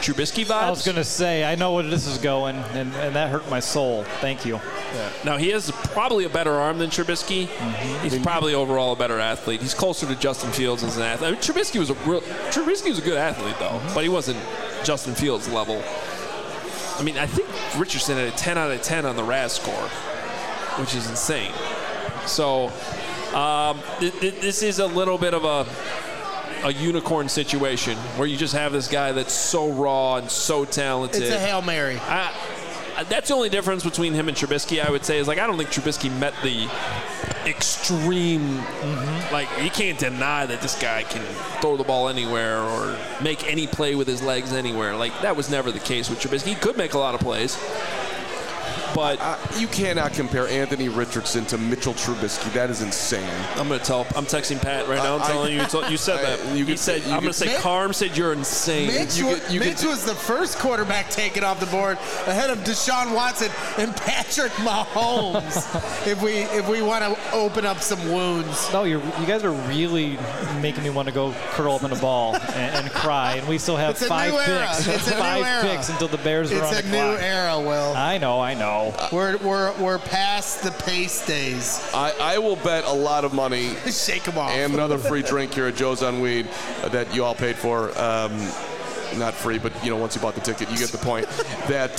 Trubisky vibes. I was going to say, I know where this is going, and that hurt my soul. Thank you. Yeah. Now, he has probably a better arm than Trubisky. Mm-hmm. He's probably overall a better athlete. He's closer to Justin Fields as an athlete. I mean, Trubisky was a good athlete, though, but he wasn't Justin Fields level. I mean, I think Richardson had a 10 out of 10 on the RAS score, which is insane. So this is a little bit of a unicorn situation where you just have this guy that's so raw and so talented. It's a Hail Mary. That's the only difference between him and Trubisky, I would say, is like I don't think Trubisky met the extreme. Like, you can't deny that this guy can throw the ball anywhere or make any play with his legs anywhere. Like, that was never the case with Trubisky. He could make a lot of plays. But you cannot compare Anthony Richardson to Mitchell Trubisky. That is insane. I'm texting Pat right now. I'm telling you, you said that. I'm going to say Carm said you're insane. Mitch was the first quarterback taken off the board ahead of Deshaun Watson and Patrick Mahomes. if we want to open up some wounds. No, you guys are really making me want to go curl up in a ball and cry. And we still have 5 picks. It's a five new era. Picks until the Bears are on the clock. It's a new era, Will. I know. We're past the pace days. I will bet a lot of money. Shake them off. And another free drink here at Joe's on Weed that you all paid for. Not free, but once you bought the ticket, you get the point. that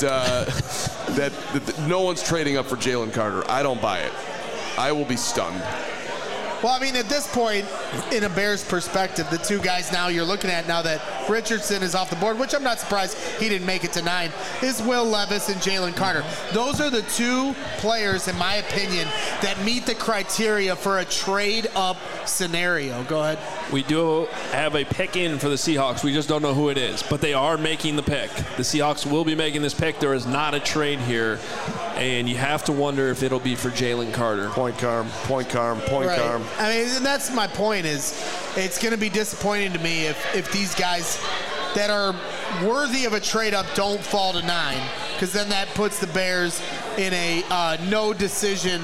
no one's trading up for Jalen Carter. I don't buy it. I will be stunned. Well, I mean, at this point, in a Bears perspective, the two guys now you're looking at now that Richardson is off the board, which I'm not surprised he didn't make it to 9, is Will Levis and Jalen Carter. Those are the two players, in my opinion, that meet the criteria for a trade-up scenario. Go ahead. We do have a pick in for the Seahawks. We just don't know who it is, but they are making the pick. The Seahawks will be making this pick. There is not a trade here, and you have to wonder if it'll be for Jalen Carter. Point Carm. Right. I mean, and that's my point is it's going to be disappointing to me if these guys that are worthy of a trade-up don't fall to 9, because then that puts the Bears in a no decision.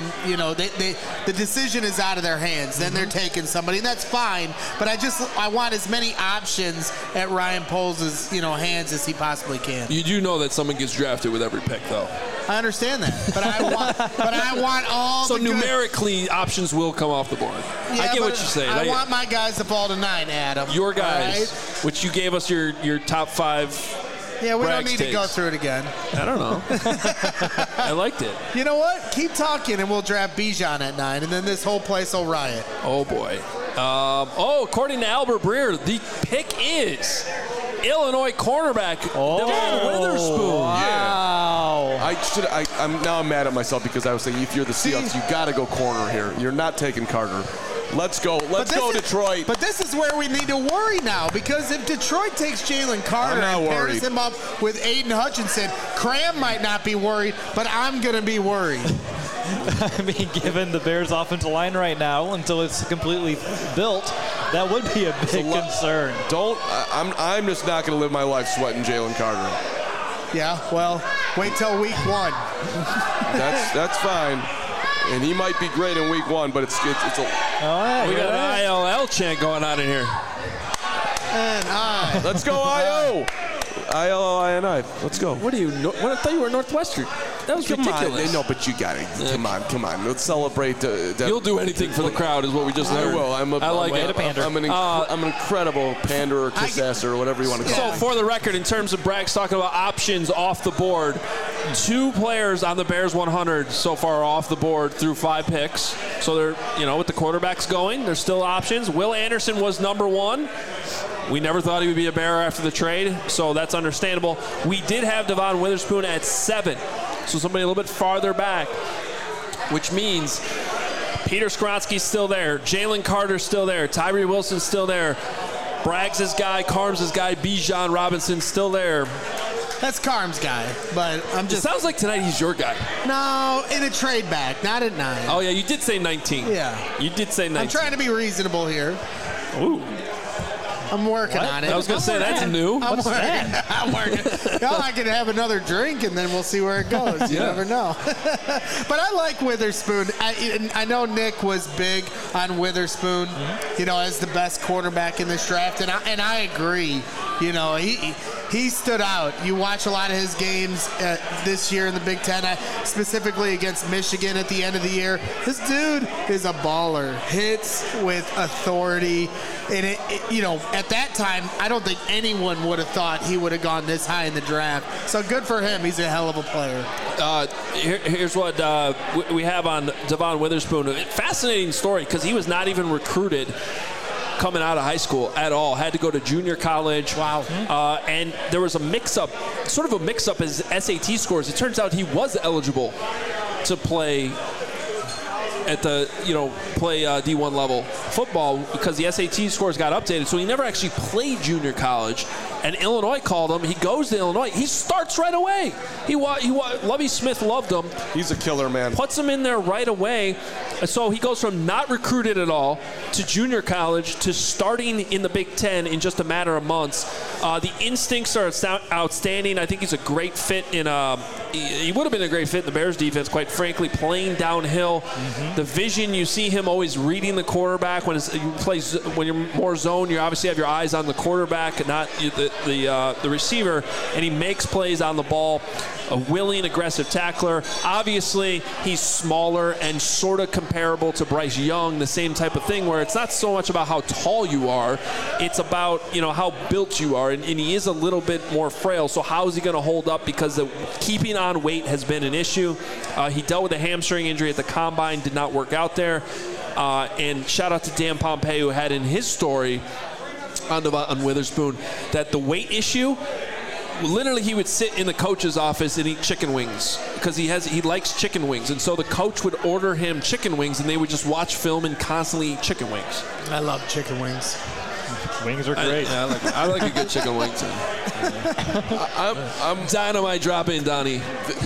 The decision is out of their hands. Then they're taking somebody, and that's fine. But I want as many options at Ryan Poles' hands as he possibly can. You do know that someone gets drafted with every pick, though. I understand that, but I want all. So numerically, options will come off the board. Yeah, I get what you're saying. I want my guys to fall to 9, Adam. Your guys, right? Which you gave us your top 5. Yeah, we don't need to go through it again. I don't know. I liked it. You know what? Keep talking, and we'll draft Bijan at 9, and then this whole place will riot. Oh boy. According to Albert Breer, the pick is Illinois cornerback Devon Witherspoon. Wow. I'm mad at myself because I was saying if you're the Seahawks, you got to go corner here. You're not taking Carter. Let's go. Let's go, Detroit. But this is where we need to worry now, because if Detroit takes Jalen Carter and pairs him up with Aiden Hutchinson, Cram might not be worried, but I'm going to be worried. I mean, given the Bears' offensive line right now, until it's completely built, that would be a big concern. I'm just not going to live my life sweating Jalen Carter. Yeah, well, wait till week 1. That's fine. And he might be great in week 1, but it's a. All right, we got an ILL chant going on in here. Let's go, IO. ILLINI. Let's go. What are you? I thought you were Northwestern. That was ridiculous. No, but you got it. Come on. Let's celebrate. You'll do anything for the crowd, is what we just learned. I will. I'm an incredible panderer, kiss-asser, whatever you want to call it. So, for the record, in terms of Bragg's talking about options off the board, 2 players on the Bears 100 so far off the board through 5 picks. So they're, with the quarterbacks going, there's still options. Will Anderson was number 1. We never thought he would be a Bear after the trade, so that's understandable. We did have Devon Witherspoon at 7, so somebody a little bit farther back, which means Peter Skronsky's still there, Jalen Carter's still there, Tyree Wilson's still there, Bragg's his guy, Carm's his guy, Bijan Robinson's still there. That's Carm's guy, but I'm just... It sounds like tonight he's your guy. No, in a trade back, not at 9. Oh, yeah, you did say 19. Yeah. You did say 19. I'm trying to be reasonable here. Ooh. I'm working on it. I was going to say, that's new. What's that? I'm working. I can have another drink, and then we'll see where it goes. You never know. But I like Witherspoon. I know Nick was big on Witherspoon, as the best quarterback in this draft, and I agree. he stood out. You watch a lot of his games this year in the Big Ten, specifically against Michigan at the end of the year. This dude is a baller. Hits with authority. And, at that time, I don't think anyone would have thought he would have gone this high in the draft. So good for him. He's a hell of a player. Here's what we have on Devon Witherspoon. A fascinating story because he was not even recruited coming out of high school at all. Had to go to junior college. Wow. And there was a mix-up his SAT scores. It turns out he was eligible to play at the D1 level football because the SAT scores got updated, so he never actually played junior college. And Illinois called him. He goes to Illinois. He starts right away. Lovie Smith loved him. He's a killer, man. Puts him in there right away. So he goes from not recruited at all to junior college to starting in the Big Ten in just a matter of months. The instincts are outstanding. I think he's a great fit he would have been a great fit in the Bears defense, quite frankly, playing downhill. Mm-hmm. The vision, you see him always reading the quarterback. When you're more zone, you obviously have your eyes on the quarterback and not the receiver, and he makes plays on the ball. A willing, aggressive tackler. Obviously, he's smaller and sort of comparable to Bryce Young, the same type of thing where it's not so much about how tall you are, it's about how built you are, and he is a little bit more frail. So how is he going to hold up? Because keeping on weight has been an issue. He dealt with a hamstring injury at the combine, did not work out there. And shout out to Dan Pompei, who had in his story on Witherspoon that the weight issue, literally he would sit in the coach's office and eat chicken wings because he likes chicken wings, and so the coach would order him chicken wings and they would just watch film and constantly eat chicken wings. I love chicken wings. Wings are great. I like a good chicken wing too. I'm dynamite dropping, Donnie.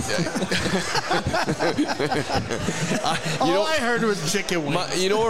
All I heard was chicken wings.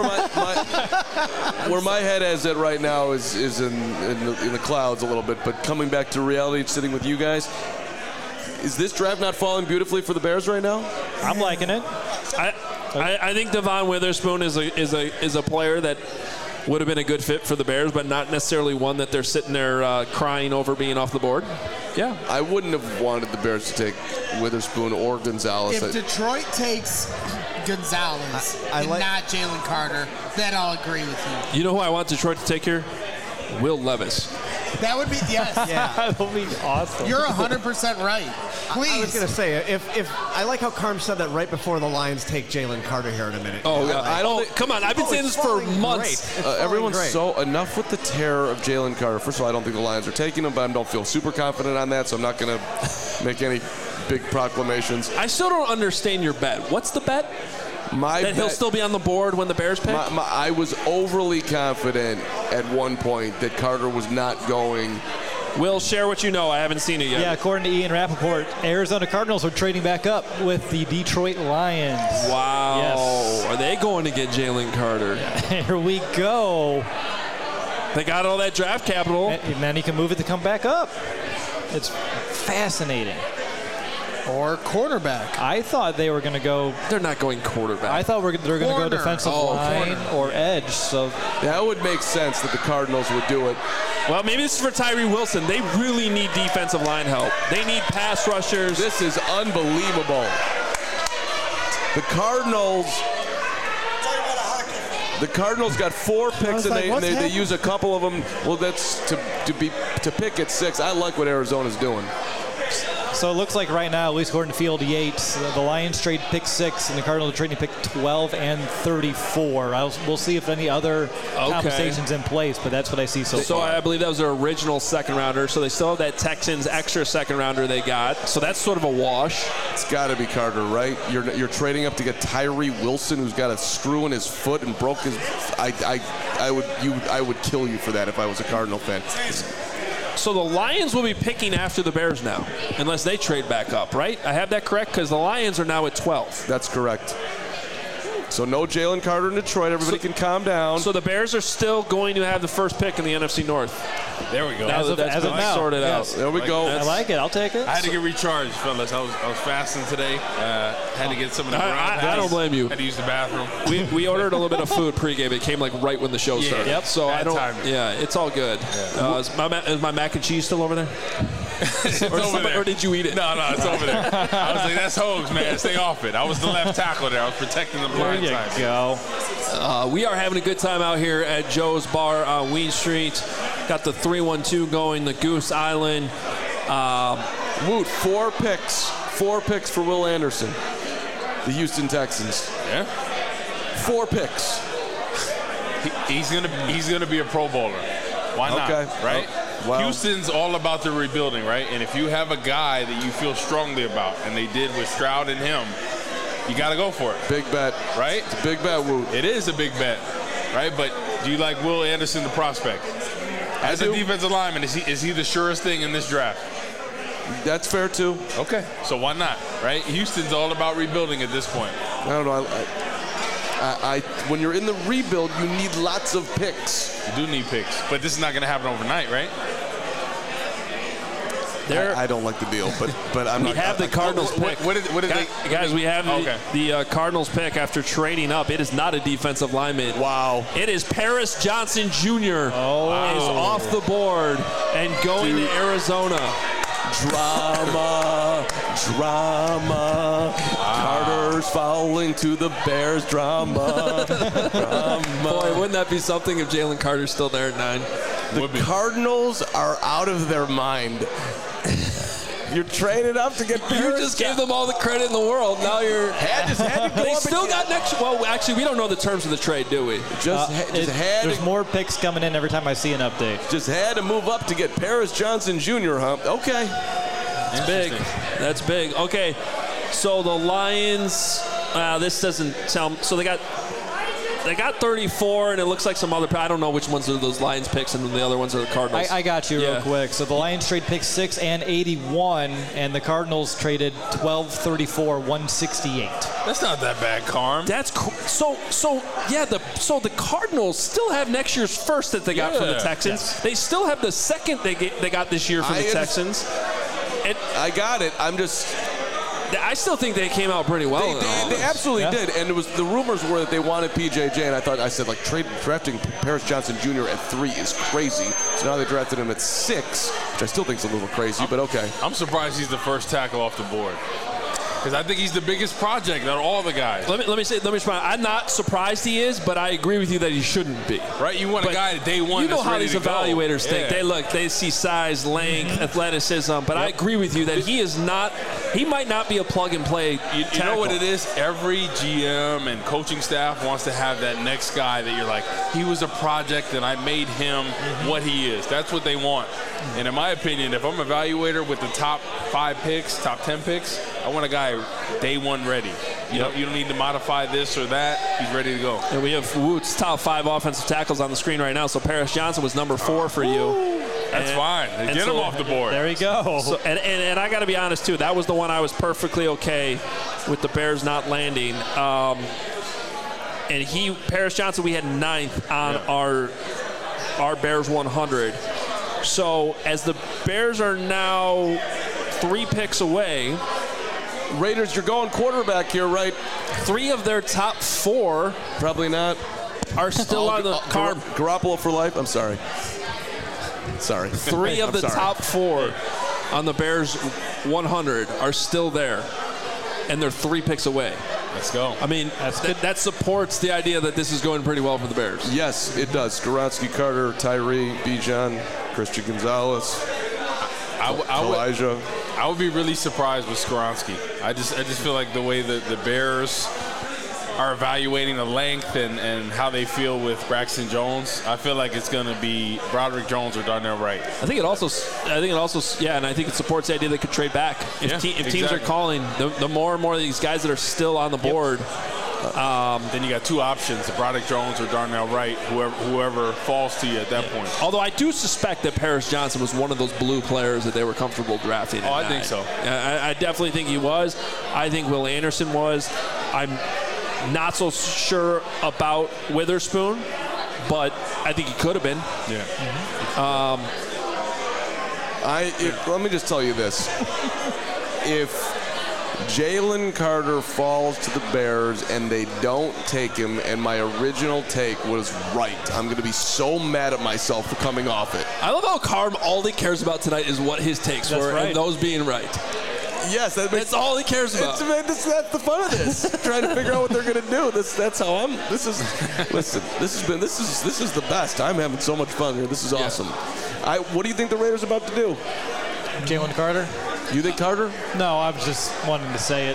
Where my head is at right now is in the clouds a little bit. But coming back to reality, sitting with you guys, is this draft not falling beautifully for the Bears right now? I'm liking it. I think Devon Witherspoon is a player that would have been a good fit for the Bears, but not necessarily one that they're sitting there crying over being off the board. Yeah. I wouldn't have wanted the Bears to take Witherspoon or Gonzalez. If Detroit takes Gonzalez not Jalen Carter, then I'll agree with you. You know who I want Detroit to take here? Will Levis. That would be, yes. Yeah. That would be awesome. You're 100% right. Please. I was going to say, if I like how Carm said that right before the Lions take Jalen Carter here in a minute. Come on. I've been saying this for months. Everyone's so enough with the terror of Jalen Carter. First of all, I don't think the Lions are taking him, but I don't feel super confident on that, so I'm not going to make any big proclamations. I still don't understand your bet. What's the bet? He'll still be on the board when the Bears pick? I was overly confident at one point that Carter was not going. Will, share what you know. I haven't seen it yet. Yeah, according to Ian Rappaport, Arizona Cardinals are trading back up with the Detroit Lions. Wow. Yes. Are they going to get Jalen Carter? Here we go. They got all that draft capital. And then he can move it to come back up. It's fascinating. Or cornerback. I thought they were going to go. They're not going quarterback. I thought they were going to go defensive line or edge. So that would make sense that the Cardinals would do it. Well, maybe this is for Tyree Wilson. They really need defensive line help. They need pass rushers. This is unbelievable. The Cardinals got 4 picks, and they use a couple of them. Well, that's to pick at 6. I like what Arizona's doing. So it looks like right now, at least according to Field Yates, the Lions trade pick 6, and the Cardinals are trading pick 12 and 34. We'll see if any other compensation's in place, but that's what I see so far. So I believe that was their original second rounder, so they still have that Texans extra second rounder they got. So that's sort of a wash. It's got to be Carter, right? You're trading up to get Tyree Wilson, who's got a screw in his foot and broke his. I would kill you for that if I was a Cardinal fan. So the Lions will be picking after the Bears now, unless they trade back up, right? I have that correct? Because the Lions are now at 12. That's correct. So no Jalen Carter in Detroit. Everybody can calm down. So the Bears are still going to have the first pick in the NFC North. There we go. As of now. Sorted out. There we go. I like it. I'll take it. I had to get recharged, fellas. I was fasting today. Had to get some of the I don't blame you. Had to use the bathroom. We ordered a little bit of food pregame. It came like right when the show started. Yep. So Bad timing. Yeah, it's all good. Yeah. Is my mac and cheese still over there? Or did you eat it? No, it's over there. I was like, that's Hogs, man. Stay off it. I was the left tackle there. I was protecting the blind side. There you go. We are having a good time out here at Joe's Bar on Weed Street. Got the 3-1-2 going, the Goose Island. Woot, 4 picks. 4 picks for Will Anderson. The Houston Texans. Yeah. 4 picks. He's gonna be a Pro Bowler. Why not? Okay. Right? Well, Houston's all about the rebuilding, right? And if you have a guy that you feel strongly about, and they did with Stroud and him, you got to go for it. Big bet. Right? It's a big bet, Woot. It is a big bet, right? But do you like Will Anderson, the prospect? As a defensive lineman, is he the surest thing in this draft? That's fair, too. Okay. So why not, right? Houston's all about rebuilding at this point. I don't know. When you're in the rebuild, you need lots of picks. You do need picks. But this is not going to happen overnight, right? I don't like the deal, but I'm not. We have the Cardinals pick. What did they? Guys, we have the Cardinals pick after trading up. It is not a defensive lineman. Wow. It is Paris Johnson Jr. Is off the board and going to Arizona. Drama. Carter's fouling to the Bears. Drama. Boy, wouldn't that be something if Jalen Carter's still there at 9? The Cardinals are out of their mind. You're trading up to get Paris. You just gave them all the credit in the world. Now you're. They still got next. Well, actually, we don't know the terms of the trade, do we? There's more picks coming in every time I see an update. Just had to move up to get Paris Johnson Jr., huh? Okay. That's big. That's big. Okay. So the Lions, this doesn't sound. So they got 34, and it looks like some other. I don't know which ones are those Lions picks, and the other ones are the Cardinals. I got you real quick. So the Lions trade pick 6 and 81, and the Cardinals traded 12, 34, 168. That's not that bad, Carm. That's so the Cardinals still have next year's first that they got from the Texans. Yes. They still have the second they got this year from the Texans. I got it. I still think they came out pretty well. They absolutely did, and the rumors were that they wanted PJJ, and I said drafting Paris Johnson Jr. at 3 is crazy. So now they drafted him at 6, which I still think is a little crazy, but okay. I'm surprised he's the first tackle off the board. Because I think he's the biggest project out of all the guys. Let me respond. I'm not surprised he is, but I agree with you that he shouldn't be. Right? You want a guy at day one. You know how these evaluators think. Yeah. They see size, length, athleticism. But I agree with you that he is not. He might not be a plug and play. You know what it is? Every GM and coaching staff wants to have that next guy that you're like, he was a project and I made him what he is. That's what they want. And in my opinion, if I'm an evaluator with the top 5 picks, top 10 picks, I want a guy day one ready. You don't need to modify this or that. He's ready to go. And we have Woot's top 5 offensive tackles on the screen right now. So Paris Johnson was number 4 for you. That's fine. Get him off the board. There you go. So, and I got to be honest, too. That was the one I was perfectly okay with the Bears not landing. And Paris Johnson, we had 9th on our Bears 100. So as the Bears are now 3 picks away. Raiders, you're going quarterback here, right? 3 of their top 4 probably not are still on the card. Garoppolo for life. I'm sorry. 3 of the top 4 on the Bears 100 are still there, and they're 3 picks away. Let's go. I mean, that supports the idea that this is going pretty well for the Bears. Yes, it does. Skoronski, Carter, Tyree, Bijan, Christian Gonzalez, Elijah. I would be really surprised with Skoronski. I just feel like the way that the Bears are evaluating the length and how they feel with Braxton Jones, I feel like it's going to be Broderick Jones or Darnell Wright. I think it also, and I think it supports the idea they could trade back. If teams are calling, the more and more of these guys that are still on the board. Then you got 2 options, Broderick Jones or Darnell Wright, whoever falls to you at that point. Although I do suspect that Paris Johnson was one of those blue players that they were comfortable drafting. I think so. I definitely think he was. I think Will Anderson was. I'm not so sure about Witherspoon, but I think he could have been. Yeah. Let me just tell you this. If Jalen Carter falls to the Bears, and they don't take him, and my original take was right. I'm going to be so mad at myself for coming off it. I love how Carm, all he cares about tonight is what his takes were, and those being right. Yes, that's all he cares about. That's the fun of this. Trying to figure out what they're going to do. That's how I'm. This is the best. I'm having so much fun here. This is awesome. What do you think the Raiders are about to do? Jalen Carter. You think Carter? No, I was just wanting to say it.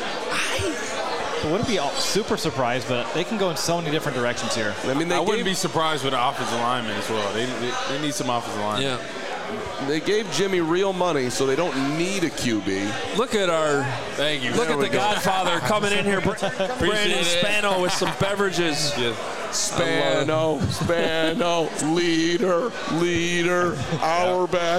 I wouldn't be super surprised, but they can go in so many different directions here. I mean, I wouldn't be surprised with the offensive lineman as well. They need some offensive linemen. Yeah. They gave Jimmy real money, so they don't need a QB. Look at our Thank you. Look at the Godfather coming in here, Brandon Spano with some beverages. Yeah. Spano, leader, our back.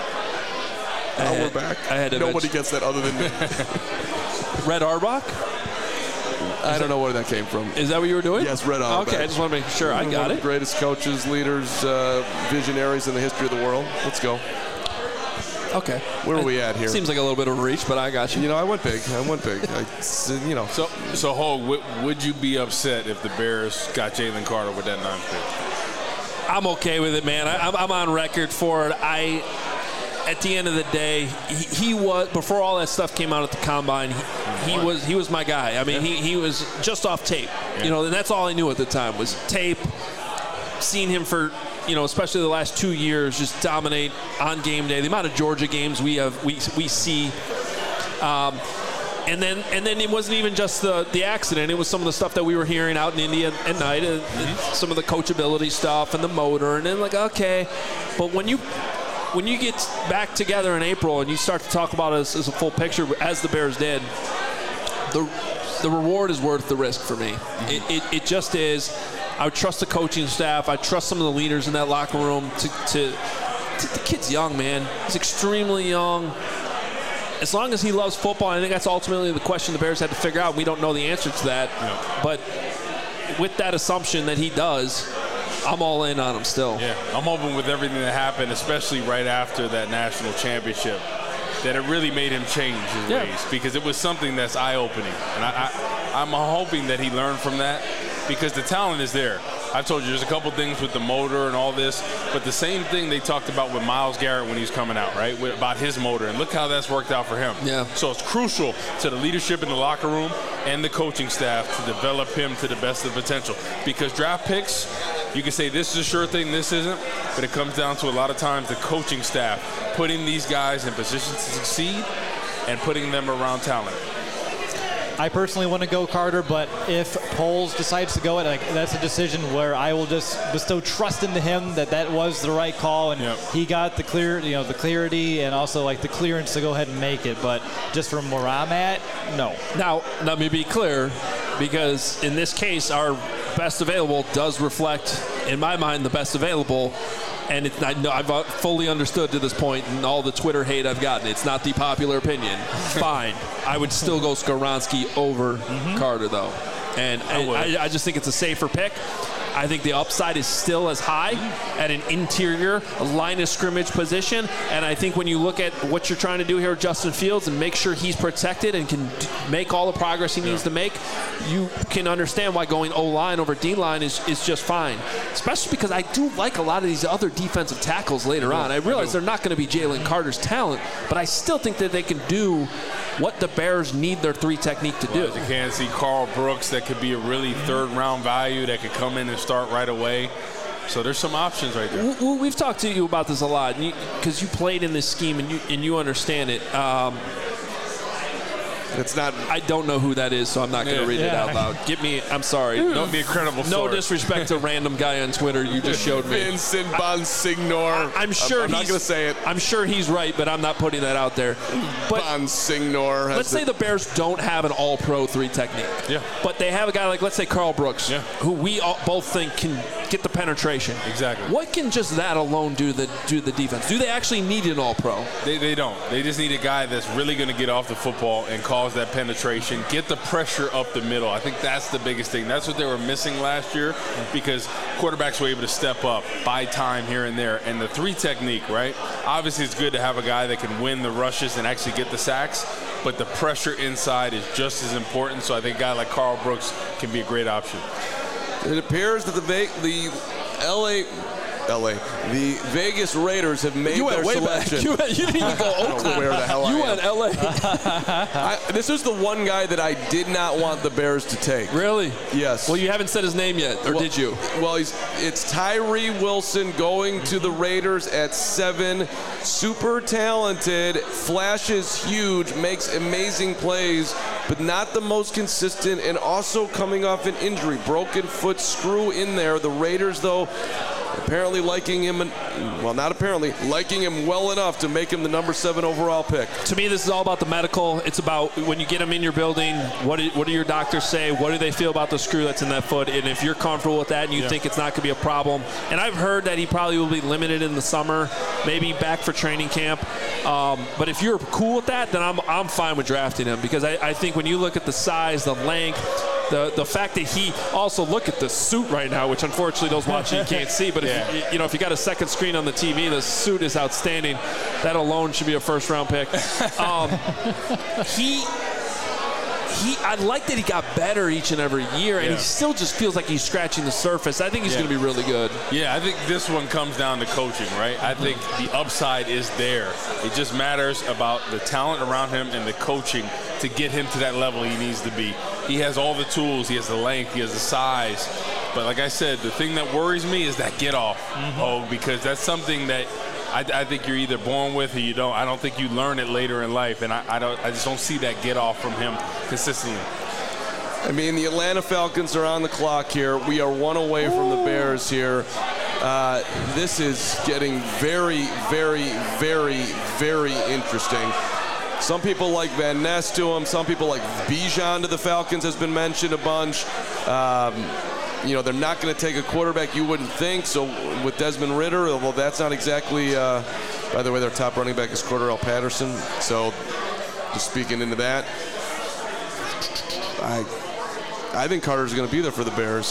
Nobody gets that other than me. Red Auerbach? I don't know where that came from. Is that what you were doing? Yes, Red Auerbach. Okay, I just want to make sure I got it. Greatest coaches, leaders, visionaries in the history of the world. Let's go. Okay. Where are we at here? Seems like a little bit of a reach, but I got you. I went big. So Hogue, would you be upset if the Bears got Jalen Carter with that 9th pick? I'm okay with it, man. I'm on record for it. At the end of the day, he was, before all that stuff came out at the combine, he was my guy. I mean, he was just off tape, and that's all I knew at the time was tape. Seeing him for, especially the last 2 years, just dominate on game day. The amount of Georgia games we see. And then it wasn't even just the accident. It was some of the stuff that we were hearing out in India at night, and some of the coachability stuff and the motor. And then okay, but when you get back together in April and you start to talk about it as a full picture, as the Bears did, the reward is worth the risk for me. It just is. I would trust the coaching staff. I trust some of the leaders in that locker room. The kid's young, man. He's extremely young. As long as he loves football, I think that's ultimately the question the Bears had to figure out. We don't know the answer to that. No. But with that assumption that he does, I'm all in on him still. Yeah, I'm hoping with everything that happened, especially right after that national championship, that it really made him change his ways, because it was something that's eye-opening. And I'm hoping that he learned from that, because the talent is there. I've told you there's a couple things with the motor and all this, but the same thing they talked about with Myles Garrett when he was coming out, right, about his motor, and look how that's worked out for him. Yeah. So it's crucial to the leadership in the locker room and the coaching staff to develop him to the best of potential, because draft picks, you can say this is a sure thing, this isn't, but it comes down to a lot of times the coaching staff putting these guys in positions to succeed and putting them around talent. I personally want to go Carter, but if Poles decides to go it, that's a decision where I will just bestow trust into him that was the right call, and he got the the clarity and also the clearance to go ahead and make it. But just from where I'm at, no. Now let me be clear, because in this case, our best available does reflect, in my mind, the best available. And I've fully understood to this point, and all the Twitter hate I've gotten, it's not the popular opinion. Fine. I would still go Skoronski over Carter, though. And I just think it's a safer pick. I think the upside is still as high at an interior line of scrimmage position. And I think when you look at what you're trying to do here with Justin Fields and make sure he's protected and can make all the progress he needs to make, you can understand why going O-line over D-line is just fine. Especially because I do like a lot of these other defensive tackles later on. I realize they're not going to be Jalen Carter's talent, but I still think that they can do what the Bears need their 3 technique to do. You can see Carl Brooks that could be a really third-round value that could come in and start right away. So there's some options right there. We've talked to you about this a lot because you played in this scheme and you understand it. It's not. I don't know who that is, so I'm not going to read it out loud. I'm sorry. Don't be a credible source. No disrespect to random guy on Twitter you just showed me. Vincent Bonsignor. I'm sure I'm not going to say it. I'm sure he's right, but I'm not putting that out there. But Bonsignor. Let's say the Bears don't have an all-pro 3 technique. Yeah. But they have a guy like, let's say, Carl Brooks, who we both think can get the penetration. Exactly. What can just that alone do the defense? Do they actually need an all-pro? They don't. They just need a guy that's really going to get off the football and cause that penetration, get the pressure up the middle. I think that's the biggest thing. That's what they were missing last year, because quarterbacks were able to step up, buy time here and there. And the 3 technique, right? Obviously, it's good to have a guy that can win the rushes and actually get the sacks. but the pressure inside is just as important. So I think a guy like Karl Brooks can be a great option. It appears that the Vegas Raiders have made their selection. You didn't even go Oakland. I don't know where the hell I am. You went L.A. This is the one guy that I did not want the Bears to take. Really? Yes. Well, you haven't said his name yet, or did you? Well, it's Tyree Wilson going to the Raiders at 7. Super talented, flashes huge, makes amazing plays, but not the most consistent, and also coming off an injury. Broken foot screw in there. The Raiders, though, apparently liking him, liking him well enough to make him the number 7 overall pick. To me, this is all about the medical. It's about when you get him in your building, what do your doctors say? What do they feel about the screw that's in that foot? And if you're comfortable with that and you think it's not going to be a problem. And I've heard that he probably will be limited in the summer, maybe back for training camp. But if you're cool with that, then I'm fine with drafting him, because I think when you look at the size, the length, the fact that he also, look at the suit right now, which unfortunately those watching you can't see, but if you got a second screen on the TV, the suit is outstanding. That alone should be a first-round pick. I like that he got better each and every year, and he still just feels like he's scratching the surface. I think he's going to be really good. Yeah, I think this one comes down to coaching, right? I think the upside is there. It just matters about the talent around him and the coaching to get him to that level he needs to be. He has all the tools. He has the length. He has the size. But like I said, the thing that worries me is that get off. Because that's something that I think you're either born with or you don't. I don't think you learn it later in life, and I just don't see that get off from him consistently. I mean, the Atlanta Falcons are on the clock here. We are 1 away from the Bears here. This is getting very, very, very, very interesting. Some people like Van Ness to him. Some people like Bijan to the Falcons has been mentioned a bunch. They're not going to take a quarterback, you wouldn't think. So with Desmond Ridder, although that's not exactly, by the way, their top running back is Cordarrelle Patterson. So just speaking into that, I think Carter's going to be there for the Bears.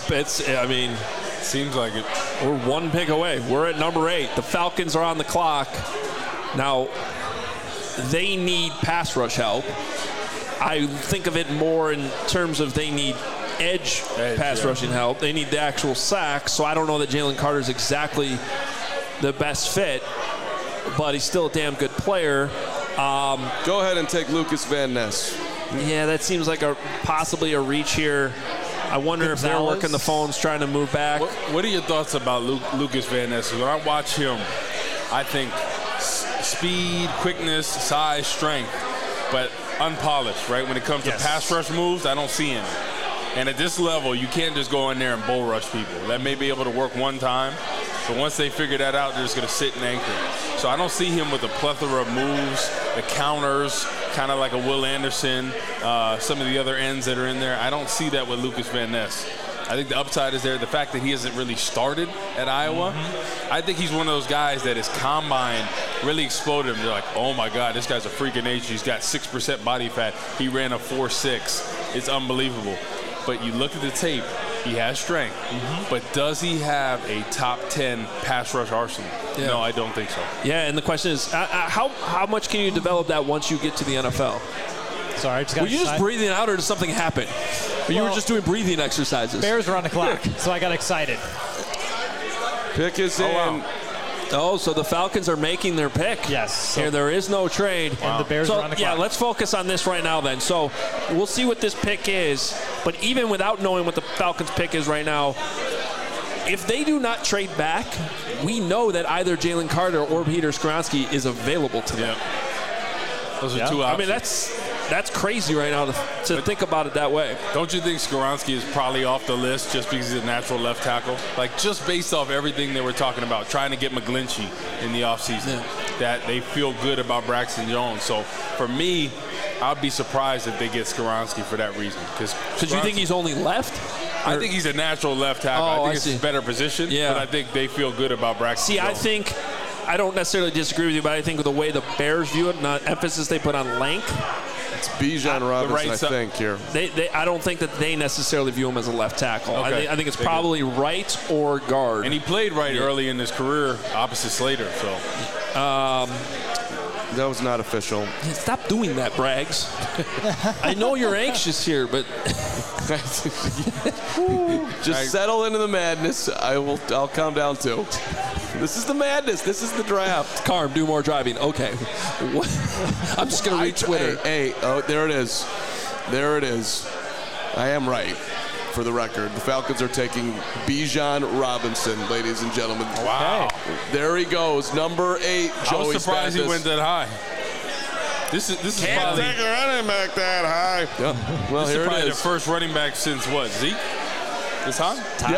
Seems like it. We're 1 pick away. We're at number 8. The Falcons are on the clock. Now, they need pass rush help. I think of it more in terms of they need edge pass rushing help. They need the actual sack, so I don't know that Jalen Carter's exactly the best fit, but he's still a damn good player. Go ahead and take Lucas Van Ness. Yeah, that seems like possibly a reach here. I wonder if they're working the phones trying to move back. What are your thoughts about Lucas Van Ness? When I watch him, I think speed, quickness, size, strength, but unpolished, right? When it comes to pass rush moves, I don't see him. And at this level, you can't just go in there and bull rush people. That may be able to work one time, but once they figure that out, they're just going to sit and anchor. So I don't see him with a plethora of moves, the counters, kind of like a Will Anderson, some of the other ends that are in there. I don't see that with Lucas Van Ness. I think the upside is there. The fact that he hasn't really started at Iowa, I think he's one of those guys that his combine really exploded him. They're like, oh, my God, this guy's a freak of nature. He's got 6% body fat. He ran a 4.6. It's unbelievable. But you look at the tape, he has strength. But does he have a top 10 pass rush arsenal? Yeah. No, I don't think so. Yeah, and the question is, how much can you develop that once you get to the NFL? Sorry, I just got Were you just breathing out, or did something happen? Or you were just doing breathing exercises? Bears are on the clock, so I got excited. Pick is in. Wow. Oh, so the Falcons are making their pick. Yes. Here, there is no trade. And the Bears are on the clock. Yeah, let's focus on this right now then. So we'll see what this pick is. But even without knowing what the Falcons pick is right now, if they do not trade back, we know that either Jalen Carter or Peter Skoronski is available to them. Yeah. Those are two options. I mean, that's crazy right now to think about it that way. Don't you think Skoronski is probably off the list just because he's a natural left tackle? Like, just based off everything they were talking about, trying to get McGlinchey in the offseason, that they feel good about Braxton Jones. So, for me, I'd be surprised if they get Skoronski for that reason. Because you think he's only left? I think he's a natural left tackle. I think it's his better position, but I think they feel good about Braxton Jones. I don't necessarily disagree with you, but I think with the way the Bears view it and the emphasis they put on length, it's Bijan Robinson, I think, here. I don't think that they necessarily view him as a left tackle. Okay. I think it's probably right or guard. And he played right early in his career opposite Slater. So That was not official. Stop doing that, Braggs. I know you're anxious here, but just settle into the madness. I'll calm down too. This is the madness. This is the draft. Carm, do more driving. Okay. I'm just going to read Twitter. Oh, there it is. There it is. I am right, for the record. The Falcons are taking Bijan Robinson, ladies and gentlemen. Wow. There he goes, number 8, Joey I was surprised he went that high. This is Can't probably, take a running back that high. Yeah. Well, this here is probably it the is. first running back since what, Zeke? This high?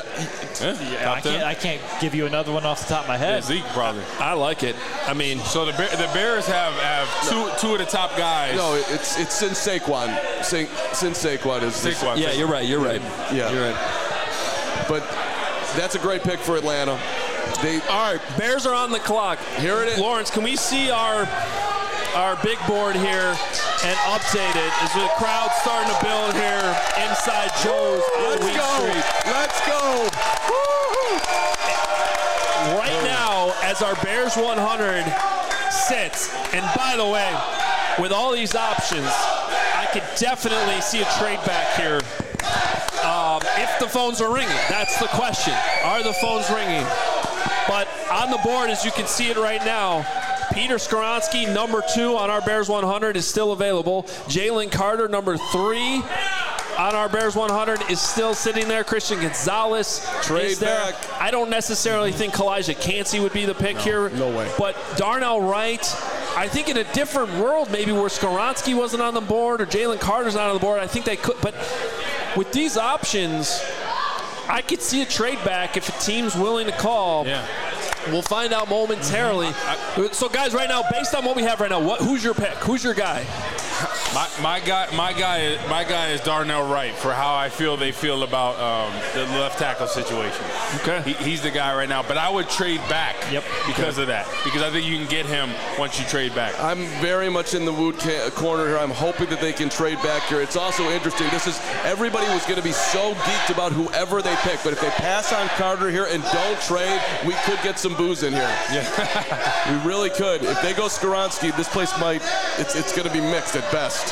I can't give you another one off the top of my head. Yeah, Zeke probably. I like it. I mean, so the Bears have two of the top guys. No, it's since Saquon. Since Saquon is Saquon. Yeah, you're right. You're right. Yeah, you're right. But that's a great pick for Atlanta. All right, Bears are on the clock. Here it is. Lawrence, can we see our big board here and update it as the crowd's starting to build here inside Joe's on Wheat Street. Let's go. Right now, as our Bears 100 sits, and by the way, with all these options, I could definitely see a trade back here. If the phones are ringing, that's the question. Are the phones ringing? But on the board, as you can see it right now, Peter Skoronski, number 2 on our Bears 100, is still available. Jalen Carter, number 3 on our Bears 100, is still sitting there. Christian Gonzalez is there. Back. I don't necessarily think Kalijah Cansey would be the pick here. No way. But Darnell Wright, I think in a different world, maybe where Skoronski wasn't on the board or Jalen Carter's not on the board, I think they could. But with these options, I could see a trade back if a team's willing to call. Yeah. We'll find out momentarily. So, guys, right now, based on what we have right now, who's your pick? Who's your guy? My guy is Darnell Wright for how I feel they feel about the left tackle situation. Okay. He's the guy right now, but I would trade back because of that. Because I think you can get him once you trade back. I'm very much in the Wood corner here. I'm hoping that they can trade back here. It's also interesting. Everybody was going to be so geeked about whoever they pick, but if they pass on Carter here and don't trade, we could get some booze in here. Yeah. We really could. If they go Skoronski, this place it's going to be mixed at best.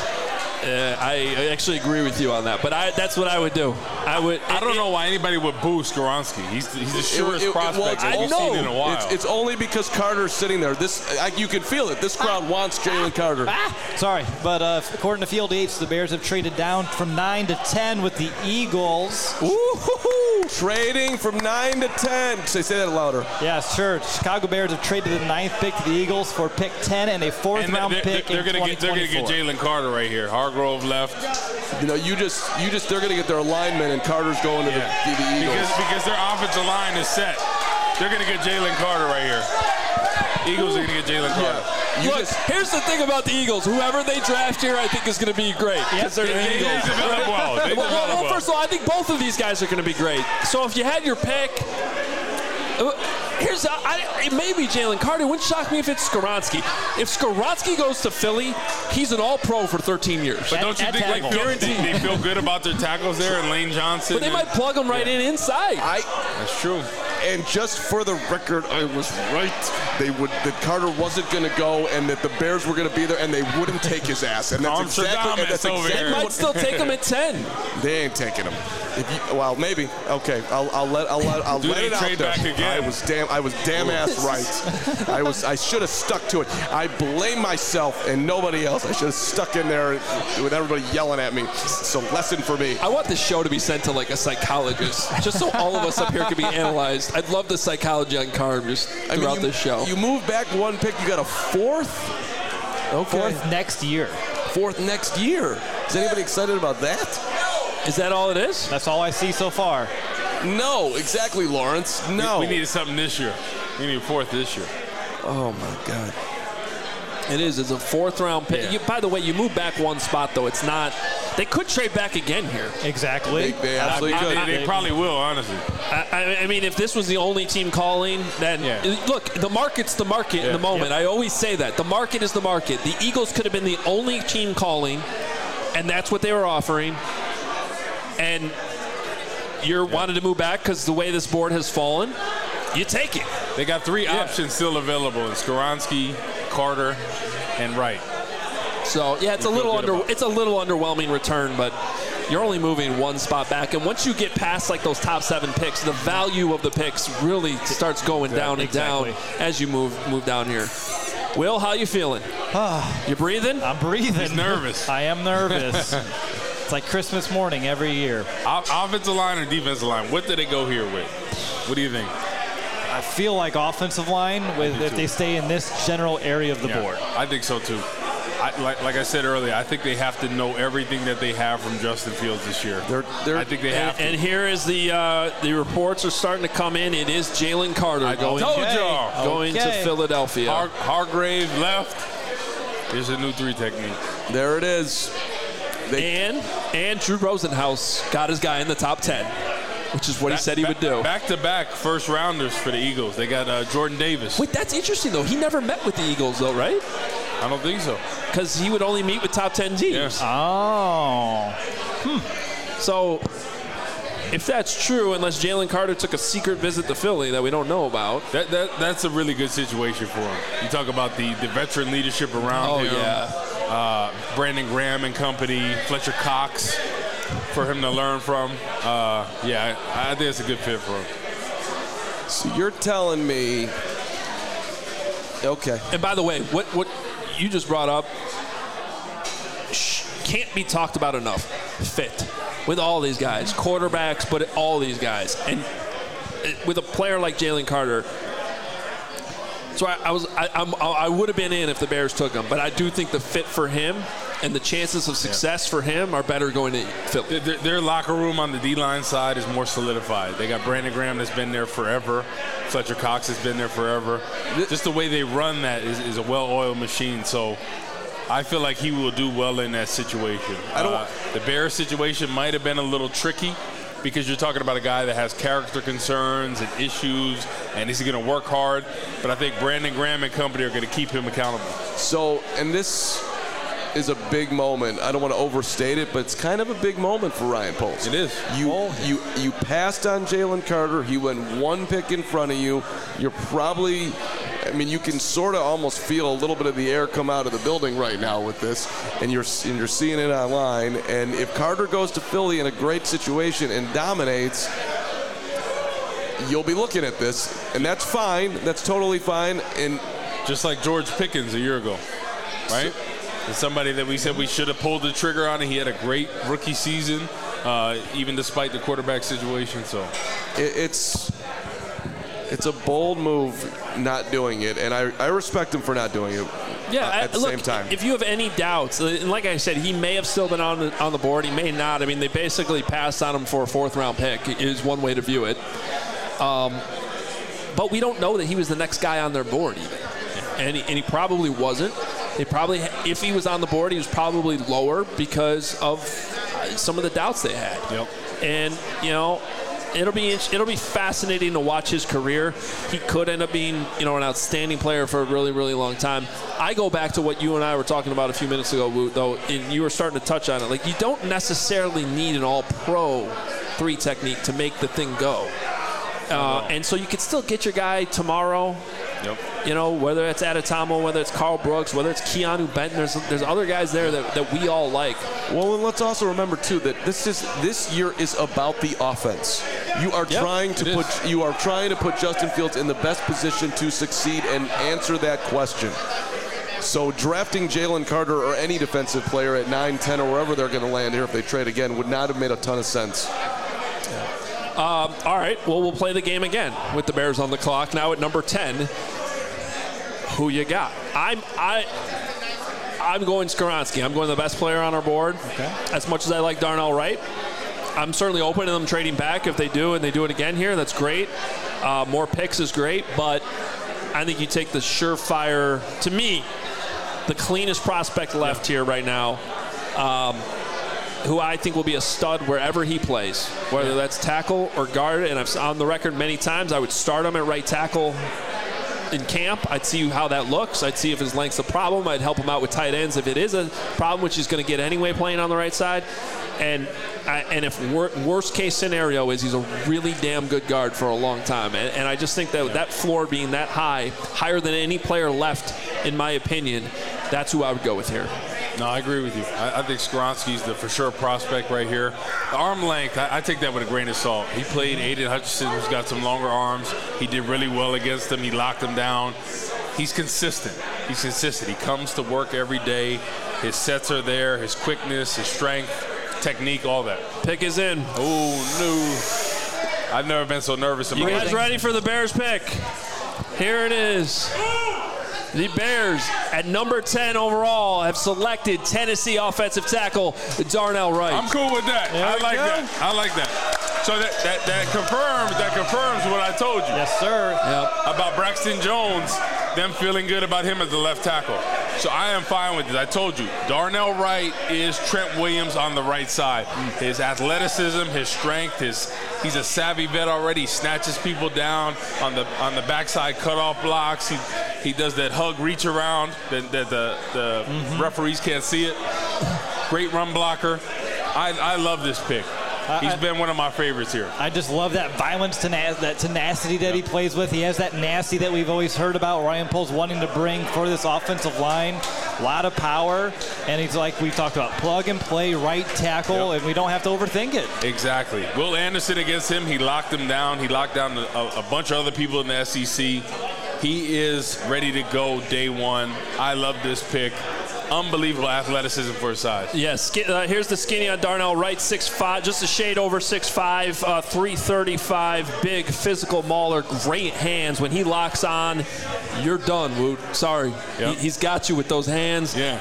I actually agree with you on that, but that's what I would do. I don't know why anybody would boo Skoronski. He's the surest prospect I've seen in a while. It's only because Carter's sitting there. You can feel it. This crowd wants Jalen Carter. Sorry, but according to Field Yates, the Bears have traded down from 9 to 10 with the Eagles. Ooh, trading from 9 to 10. Say that louder. Yeah, sure. Chicago Bears have traded the 9th pick to the Eagles for pick 10 and a 4th round pick in 2024. They're going to get Jalen Carter right here. Hargrove left. They're going to get their alignment, and Carter's going to the Eagles. Because their offensive line is set. They're going to get Jalen Carter right here. Eagles are going to get Jalen Carter. Look, here's the thing about the Eagles. Whoever they draft here, I think is going to be great. Because they're the Eagles. They develop well. Well, first of all, I think both of these guys are going to be great. So if you had your pick, it may be Jalen Carter. It wouldn't shock me if it's Skoronski. If Skoronski goes to Philly, he's an all-pro for 13 years. But don't you think they feel good about their tackles there and Lane Johnson? But they might plug him right in inside. That's true. And just for the record, I was right. That Carter wasn't going to go, and that the Bears were going to be there, and they wouldn't take his ass. And that's exactly. They might still take him at 10. They ain't taking him. Well, maybe. Okay, I'll let it out there. Back again? I was damn ass right. I should have stuck to it. I blame myself and nobody else. I should have stuck in there with everybody yelling at me. It's a lesson for me. I want this show to be sent to like a psychologist, just so all of us up here can be analyzed. I'd love the psychology on Carm just throughout this show. You move back one pick, you got a 4th? Okay. 4th next year. 4th next year. Is anybody excited about that? Is that all it is? That's all I see so far. No, exactly, Lawrence. No. We needed something this year. We need a 4th this year. Oh, my God. It is. It's a 4th round pick. Yeah. By the way, you move back one spot, though. It's not. They could trade back again here. Exactly. They absolutely could. They probably will, honestly. I mean, if this was the only team calling, then look, the market's the market in the moment. I always say that. The market is the market. The Eagles could have been the only team calling, and that's what they were offering. And you wanted to move back because the way this board has fallen, you take it. They got 3 options still available. And Skoronski, Carter, and Wright. So yeah, it's a little underwhelming return, but you're only moving one spot back. And once you get past like those top 7 picks, the value of the picks really starts going down and down as you move down here. Will, how you feeling? You breathing? I'm breathing. He's nervous. I am nervous. It's like Christmas morning every year. Offensive line or defensive line? What do they go here with? What do you think? I feel like offensive line if they stay in this general area of the board. I think so too. Like I said earlier, I think they have to know everything that they have from Justin Fields this year. I think they have to. And here is the reports are starting to come in. It is Jalen Carter going to Philadelphia. Hargrave left. Here's a new 3 technique. There it is. And Drew Rosenhaus got his guy in the top 10, which is what he said he would do. Back-to-back first-rounders for the Eagles. They got Jordan Davis. Wait, that's interesting, though. He never met with the Eagles, though, right? I don't think so. Because he would only meet with top 10 teams. Yeah. Oh. So if that's true, unless Jalen Carter took a secret visit to Philly that we don't know about. That's a really good situation for him. You talk about the veteran leadership around him. Yeah. Brandon Graham and company, Fletcher Cox for him to learn from. I think it's a good fit for him. So you're telling me, okay. And by the way, what you just brought up can't be talked about enough. Fit with all these guys, quarterbacks, but all these guys, and with a player like Jalen Carter. So I would have been in if the Bears took him, but I do think the fit for him and the chances of success for him are better going to Philly. Their locker room on the D-line side is more solidified. They got Brandon Graham that's been there forever. Fletcher Cox has been there forever. Just the way they run that is a well-oiled machine. So I feel like he will do well in that situation. The Bears situation might have been a little tricky because you're talking about a guy that has character concerns and issues, and he's going to work hard. But I think Brandon Graham and company are going to keep him accountable. So, and this is a big moment. I don't want to overstate it, but it's kind of a big moment for Ryan Poles. It is. You passed on Jalen Carter. He went 1 pick in front of you. You're probably, you can sort of almost feel a little bit of the air come out of the building right now with this, and you're seeing it online. And if Carter goes to Philly in a great situation and dominates, you'll be looking at this, and that's fine. That's totally fine. And just like George Pickens a year ago, right? It's somebody that we said we should have pulled the trigger on. He had a great rookie season, even despite the quarterback situation. So it's a bold move not doing it, and I respect him for not doing it. Yeah, at the same time. If you have any doubts, and like I said, he may have still been on the board. He may not. They basically passed on him for a 4th-round pick is one way to view it. But we don't know that he was the next guy on their board even. And he probably wasn't. If he was on the board, he was probably lower because of some of the doubts they had. Yep. And it'll be fascinating to watch his career. He could end up being an outstanding player for a really, really long time. I go back to what you and I were talking about a few minutes ago, Woot, though, and you were starting to touch on it. Like, you don't necessarily need an all-pro 3 technique to make the thing go. And so you could still get your guy tomorrow. Yep. Whether it's Adetomo, whether it's Carl Brooks, whether it's Keanu Benton, there's other guys there that we all like. Well, and let's also remember too that this year is about the offense. You are trying to put Justin Fields in the best position to succeed and answer that question. So drafting Jalen Carter or any defensive player at 9, 10, or wherever they're going to land here if they trade again would not have made a ton of sense. All right, well, we'll play the game again with the Bears on the clock. Now at number 10, who you got? I'm going Skoronski. I'm going the best player on our board. Okay. As much as I like Darnell Wright, I'm certainly open to them trading back if they do, and they do it again here. That's great. More picks is great, but I think you take the surefire, to me, the cleanest prospect left here right now, who I think will be a stud wherever he plays, whether that's tackle or guard. And I've on the record many times I would start him at right tackle in camp. I'd see how that looks. I'd see if his length's a problem. I'd help him out with tight ends if it is a problem, which he's going to get anyway playing on the right side. And if worst case scenario is he's a really damn good guard for a long time. And I just think that floor being that high, higher than any player left, in my opinion, that's who I would go with here. No, I agree with you. I think Skoronski's the for sure prospect right here. The arm length, I take that with a grain of salt. He played Aiden Hutchinson, who's got some longer arms. He did really well against him. He locked him down. He's consistent. He comes to work every day. His sets are there, his quickness, his strength, technique, all that. Pick is in. Oh, no. I've never been so nervous in my life. You guys ready for the Bears pick? Here it is. The Bears, at number 10 overall, have selected Tennessee offensive tackle Darnell Wright. I'm cool with that. I like that. So that confirms what I told you. Yes, sir. Yep. About Braxton Jones, them feeling good about him as the left tackle. So I am fine with this. I told you, Darnell Wright is Trent Williams on the right side. His athleticism, his strength, he's a savvy vet already. He snatches people down on the backside cutoff blocks. He does that hug reach around that the referees can't see it. Great run blocker. I love this pick. He's been one of my favorites here. I just love that violence, that tenacity that he plays with. He has that nasty that we've always heard about Ryan Poles wanting to bring for this offensive line. A lot of power, and he's like we talked about, plug and play right tackle, and we don't have to overthink it. Exactly. Will Anderson against him, he locked him down. He locked down a bunch of other people in the SEC. He is ready to go day one. I love this pick. Unbelievable athleticism for his size. Yes, here's the skinny on Darnell Wright, 6'5", just a shade over 6'5", 335, big physical mauler, great hands. When he locks on, you're done, Woot. Sorry. Yep. He's got you with those hands. Yeah.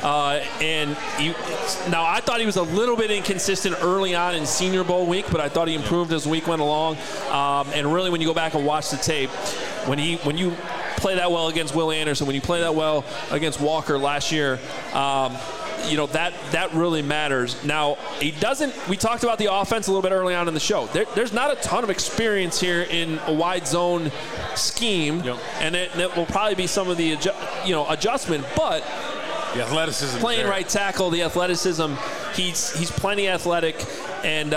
Now, I thought he was a little bit inconsistent early on in Senior Bowl week, but I thought he improved as the week went along. And really, when you go back and watch the tape, when you play that well against Will Anderson, when you play that well against Walker last year, that really matters. Now, we talked about the offense a little bit early on in the show. There's not a ton of experience here in a wide zone scheme, and it will probably be some of the adjustment, but the athleticism playing there. Right tackle, the athleticism, he's plenty athletic, and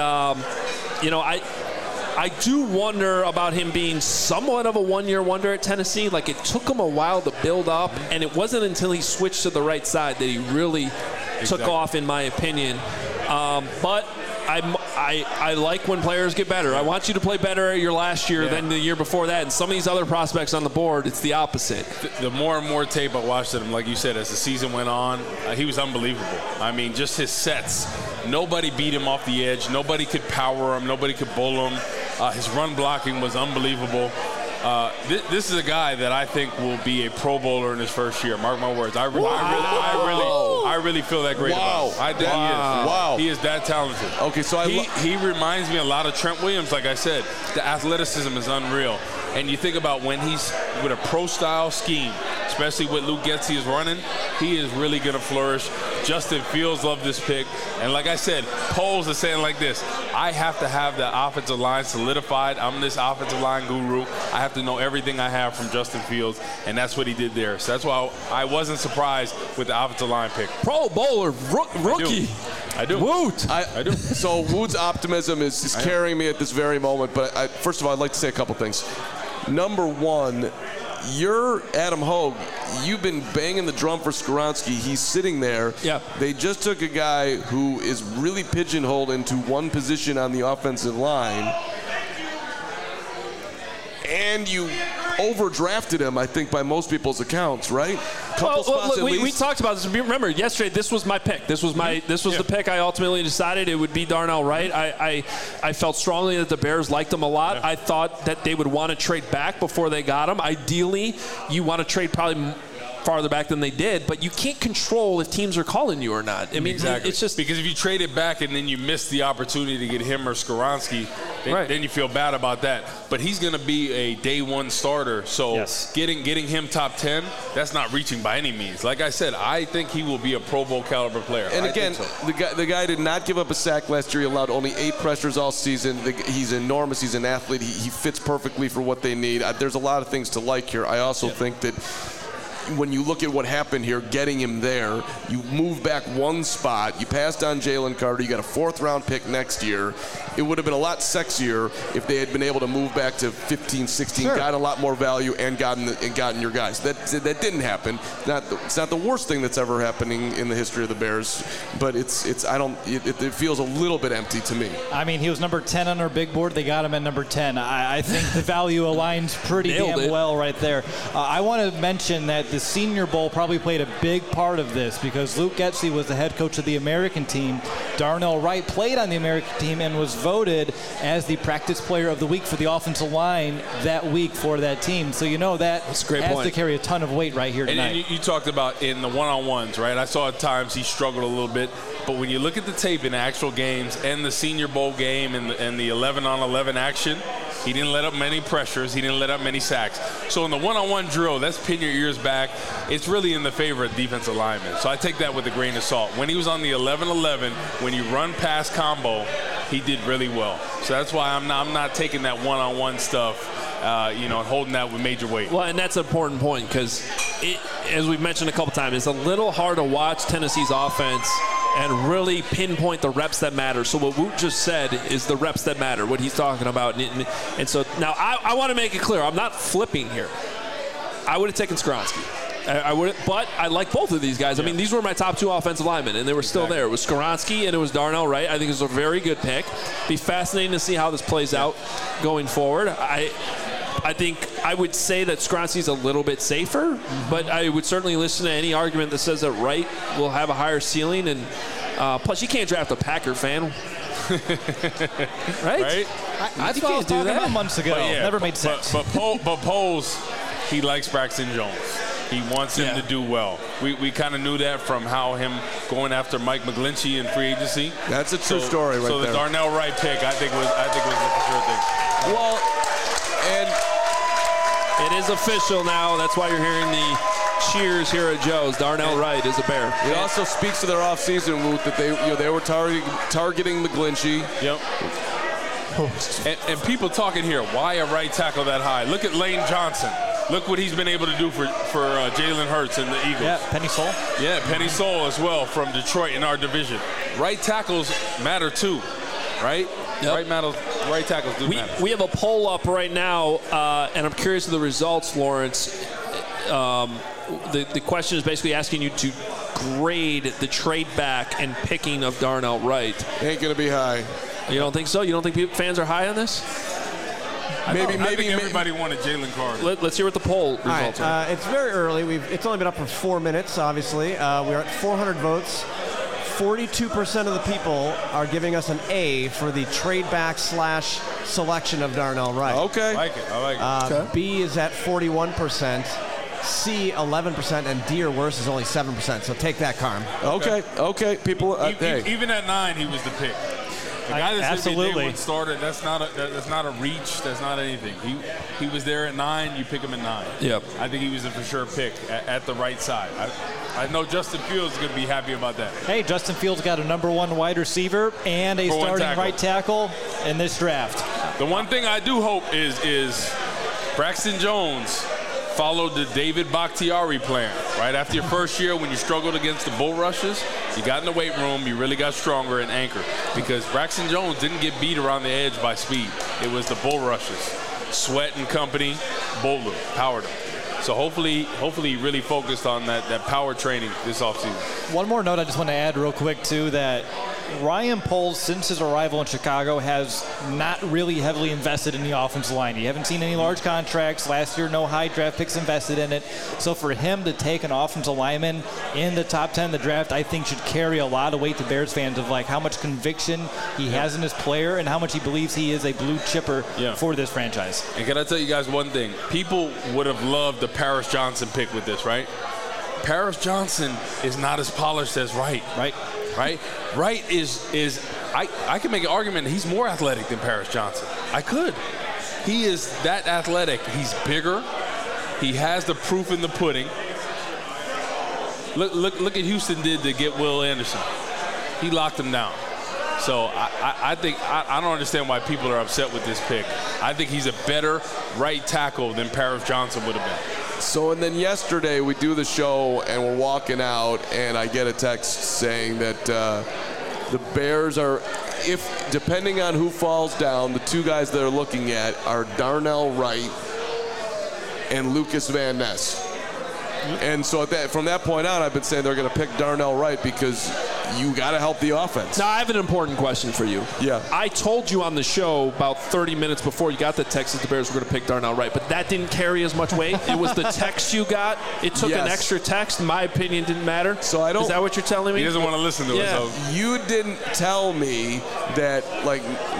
I do wonder about him being somewhat of a one-year wonder at Tennessee. Like, it took him a while to build up, and it wasn't until he switched to the right side that he really took off, in my opinion. But I like when players get better. I want you to play better your last year than the year before that. And some of these other prospects on the board, it's the opposite. The more and more tape I watched of him, like you said, as the season went on, he was unbelievable. I mean, just his sets. Nobody beat him off the edge. Nobody could power him. Nobody could bull him. His run blocking was unbelievable. This is a guy that I think will be a Pro Bowler in his first year. Mark my words. I really feel that great about him. I think he is. Wow. He is that talented. Okay, so he reminds me a lot of Trent Williams. Like I said, the athleticism is unreal. And you think about when he's with a pro-style scheme, especially what Luke Getsy is running, he is really going to flourish. Justin Fields loved this pick. And like I said, Poles is saying like this, I have to have the offensive line solidified. I'm this offensive line guru. I have to know everything I have from Justin Fields, and that's what he did there. So that's why I wasn't surprised with the offensive line pick. Pro Bowler, rookie. I do. Woot. I do. So Woot's optimism is carrying me at this very moment. But first of all, I'd like to say a couple things. Number one, you're Adam Hogue. You've been banging the drum for Skoronski. He's sitting there. Yeah. They just took a guy who is really pigeonholed into one position on the offensive line, and you overdrafted him, I think, by most people's accounts, right? We talked about this. Remember, yesterday, this was my pick. This was the pick I ultimately decided it would be Darnell Wright. I felt strongly that the Bears liked him a lot. Yeah. I thought that they would want to trade back before they got him. Ideally, you want to trade probably farther back than they did, but you can't control if teams are calling you or not. I mean, exactly. it's just because if you trade it back and then you miss the opportunity to get him or Skoronski, then you feel bad about that. But he's going to be a day one starter, so getting him top 10, that's not reaching by any means. Like I said, I think he will be a Pro Bowl caliber player. And again, the guy did not give up a sack last year. He allowed only 8 pressures all season. He's enormous. He's an athlete. He fits perfectly for what they need. There's a lot of things to like here. I also think that when you look at what happened here, getting him there, you move back one spot, you passed on Jalen Carter, you got a 4th-round pick next year. It would have been a lot sexier if they had been able to move back to 15, 16, got a lot more value, and gotten your guys. That didn't happen. It's not the worst thing that's ever happening in the history of the Bears, but it feels a little bit empty to me. I mean, he was number 10 on our big board. They got him at number 10. I think the value aligns pretty damn well right there. I want to mention that the Senior Bowl probably played a big part of this because Luke Getsy was the head coach of the American team. Darnell Wright played on the American team and was voted as the practice player of the week for the offensive line that week for that team. So you know that's a great has to carry a ton of weight right here tonight. And you talked about in the one-on-ones, right? I saw at times he struggled a little bit. But when you look at the tape in the actual games and the Senior Bowl game and the 11-on-11 action, he didn't let up many pressures. He didn't let up many sacks. So in the one-on-one drill, that's pin your ears back. It's really in the favor of defensive linemen. So I take that with a grain of salt. When he was on the 11-11, when you run past combo, he did really well. So that's why I'm not taking that one-on-one stuff, and holding that with major weight. Well, and that's an important point because, as we've mentioned a couple times, it's a little hard to watch Tennessee's offense and really pinpoint the reps that matter. So what Woot just said is the reps that matter, what he's talking about. And so now I want to make it clear, I'm not flipping here. I would have taken Skoronski. I would, but I like both of these guys. I mean, these were my top 2 offensive linemen, and they were still there. It was Skoronski and it was Darnell Wright. I think it was a very good pick. Be fascinating to see how this plays out going forward. I think I would say that Skoronski's a little bit safer, but I would certainly listen to any argument that says that Wright will have a higher ceiling. And plus, you can't draft a Packer fan. Right? I thought I was talking about months ago. Never made sense. But Poles, he likes Braxton Jones. He wants him to do well. We kind of knew that from how him going after Mike McGlinchey in free agency. That's a true story right there. So the Darnell Wright pick, I think was a for sure thing. Well, and it is official now. That's why you're hearing the cheers here at Joe's. Darnell Wright is a Bear. It also speaks to their offseason, Woot, that they were targeting McGlinchey. Yep. And people talking here, why a right tackle that high? Look at Lane Johnson. Look what he's been able to do for Jalen Hurts and the Eagles. Yeah, Penny Sewell. Yeah, Penny Sewell as well from Detroit in our division. Right tackles matter too, right? Yep. Right tackles do matter. We have a poll up right now, and I'm curious of the results, Lawrence. The question is basically asking you to grade the trade back and picking of Darnell Wright. Ain't going to be high. You don't think so? You don't think fans are high on this? Maybe everybody wanted Jalen Carter. Let's hear what the poll results are. It's very early. It's only been up for 4 minutes, obviously. We're at 400 votes. 42% of the people are giving us an A for the trade back / selection of Darnell Wright. Okay. I like it. B is at 41%. C, 11%, and D or worse is only 7%. So take that, Carm. Okay. People, even at 9, he was the pick. The guy that's absolutely started. That's not a reach. That's not anything. He was there at 9. You pick him at 9. Yep. I think he was a for sure pick at the right side. I know Justin Fields is going to be happy about that. Hey, Justin Fields got a number 1 wide receiver and a starting right tackle in this draft. The one thing I do hope is Braxton Jones followed the David Bakhtiari plan. Right after your first year when you struggled against the bull rushes, you got in the weight room, you really got stronger and anchored. Because Braxton Jones didn't get beat around the edge by speed. It was the bull rushes. Sweat and company, bowled him, powered him. So hopefully he really focused on that power training this offseason. One more note I just want to add real quick, too, that Ryan Poles, since his arrival in Chicago, has not really heavily invested in the offensive line. You haven't seen any large contracts. Last year, no high draft picks invested in it. So for him to take an offensive lineman in the top 10 of the draft, I think should carry a lot of weight to Bears fans of like how much conviction he has in his player and how much he believes he is a blue chipper for this franchise. And can I tell you guys one thing? People would have loved the Paris Johnson pick with this, right? Paris Johnson is not as polished as Wright. Right is I can make an argument that he's more athletic than Paris Johnson. I could. He is that athletic. He's bigger. He has the proof in the pudding. Look at Houston did to get Will Anderson. He locked him down. So I think I don't understand why people are upset with this pick. I think he's a better right tackle than Paris Johnson would have been. So, and then yesterday we do the show and we're walking out and I get a text saying that the Bears are, if depending on who falls down, the two guys they're looking at are Darnell Wright and Lucas Van Ness. And so from that point on, I've been saying they're going to pick Darnell Wright because you got to help the offense. Now, I have an important question for you. Yeah. I told you on the show about 30 minutes before you got the text that the Bears were going to pick Darnell Wright, but that didn't carry as much weight. It was the text you got. It took an extra text. In my opinion, didn't matter. So I don't. Is that what you're telling me? He doesn't want to listen to it. So. You didn't tell me that, like,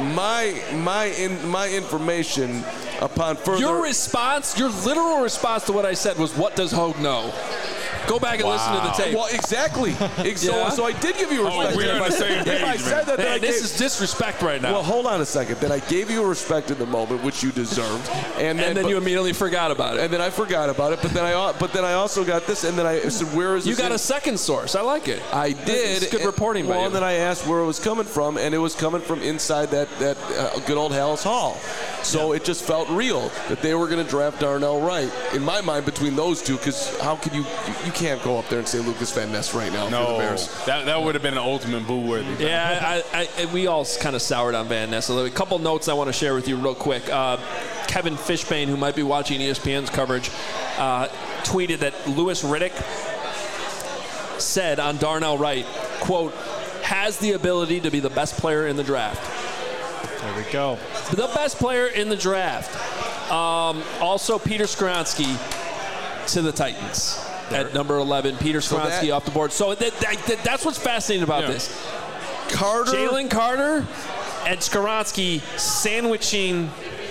my information upon further. Your response, your literal response to what I said was, "What does Hogue know?" Go back and listen to the tape. Well, exactly. So I did give you respect. Oh, we're on the same page, if I said that, then this is disrespect right now. Well, hold on a second. Then I gave you respect in the moment, which you deserved, and then you immediately forgot about it. And then I forgot about it. But then I also got this, and then I said, "Where is this?" You got a second source. I like it. I did. It's good reporting by you. Well, and then I asked where it was coming from, and it was coming from inside that good old Hallis Hall. So it just felt real that they were going to draft Darnell Wright. In my mind, between those two, because how could you can't go up there and say Lucas Van Ness right now for the Bears. That would have been an ultimate boo-worthy. Yeah, we all kind of soured on Van Ness. A couple notes I want to share with you real quick. Kevin Fishbane, who might be watching ESPN's coverage, tweeted that Louis Riddick said on Darnell Wright, quote, has the ability to be the best player in the draft. There we go. The best player in the draft. Also, Peter Skoronski to the Titans at number 11. Peter Skoronski off the board. So that's what's fascinating about this. Jalen Carter and Skoronski sandwiching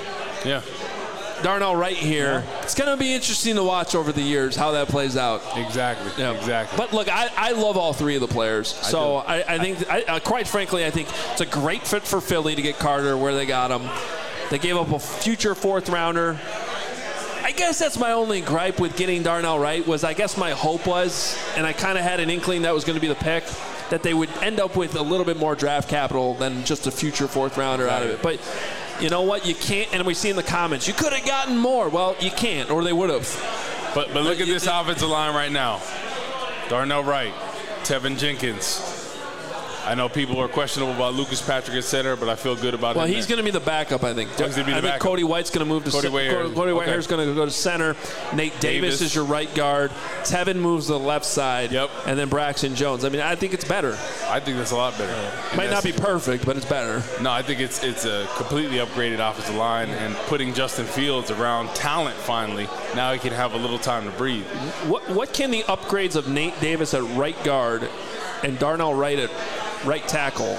Darnell Wright here. Yeah. It's going to be interesting to watch over the years how that plays out. Exactly. But look, I love all three of the players. So I think, quite frankly, I think it's a great fit for Philly to get Carter where they got him. They gave up a future fourth rounder. I guess that's my only gripe with getting Darnell Wright was I guess my hope was, and I kind of had an inkling that was going to be the pick, that they would end up with a little bit more draft capital than just a future fourth rounder out of it. But you know what? You can't, and we see in the comments, you could have gotten more. Well, you can't, or they would have. But look at this offensive line right now. Darnell Wright, Tevin Jenkins. I know people are questionable about Lucas Patrick at center, but I feel good about it. Well, he's going to be the backup, I think. I think Cody White's going to move to center. Cody Whitehair's going to go to center. Nate Davis is your right guard. Tevin moves to the left side. Yep. And then Braxton Jones. I mean, I think it's better. I think that's a lot better. Might not be perfect, but it's better. No, I think it's a completely upgraded offensive line, and putting Justin Fields around talent finally. Now he can have a little time to breathe. What can the upgrades of Nate Davis at right guard and Darnell Wright at right tackle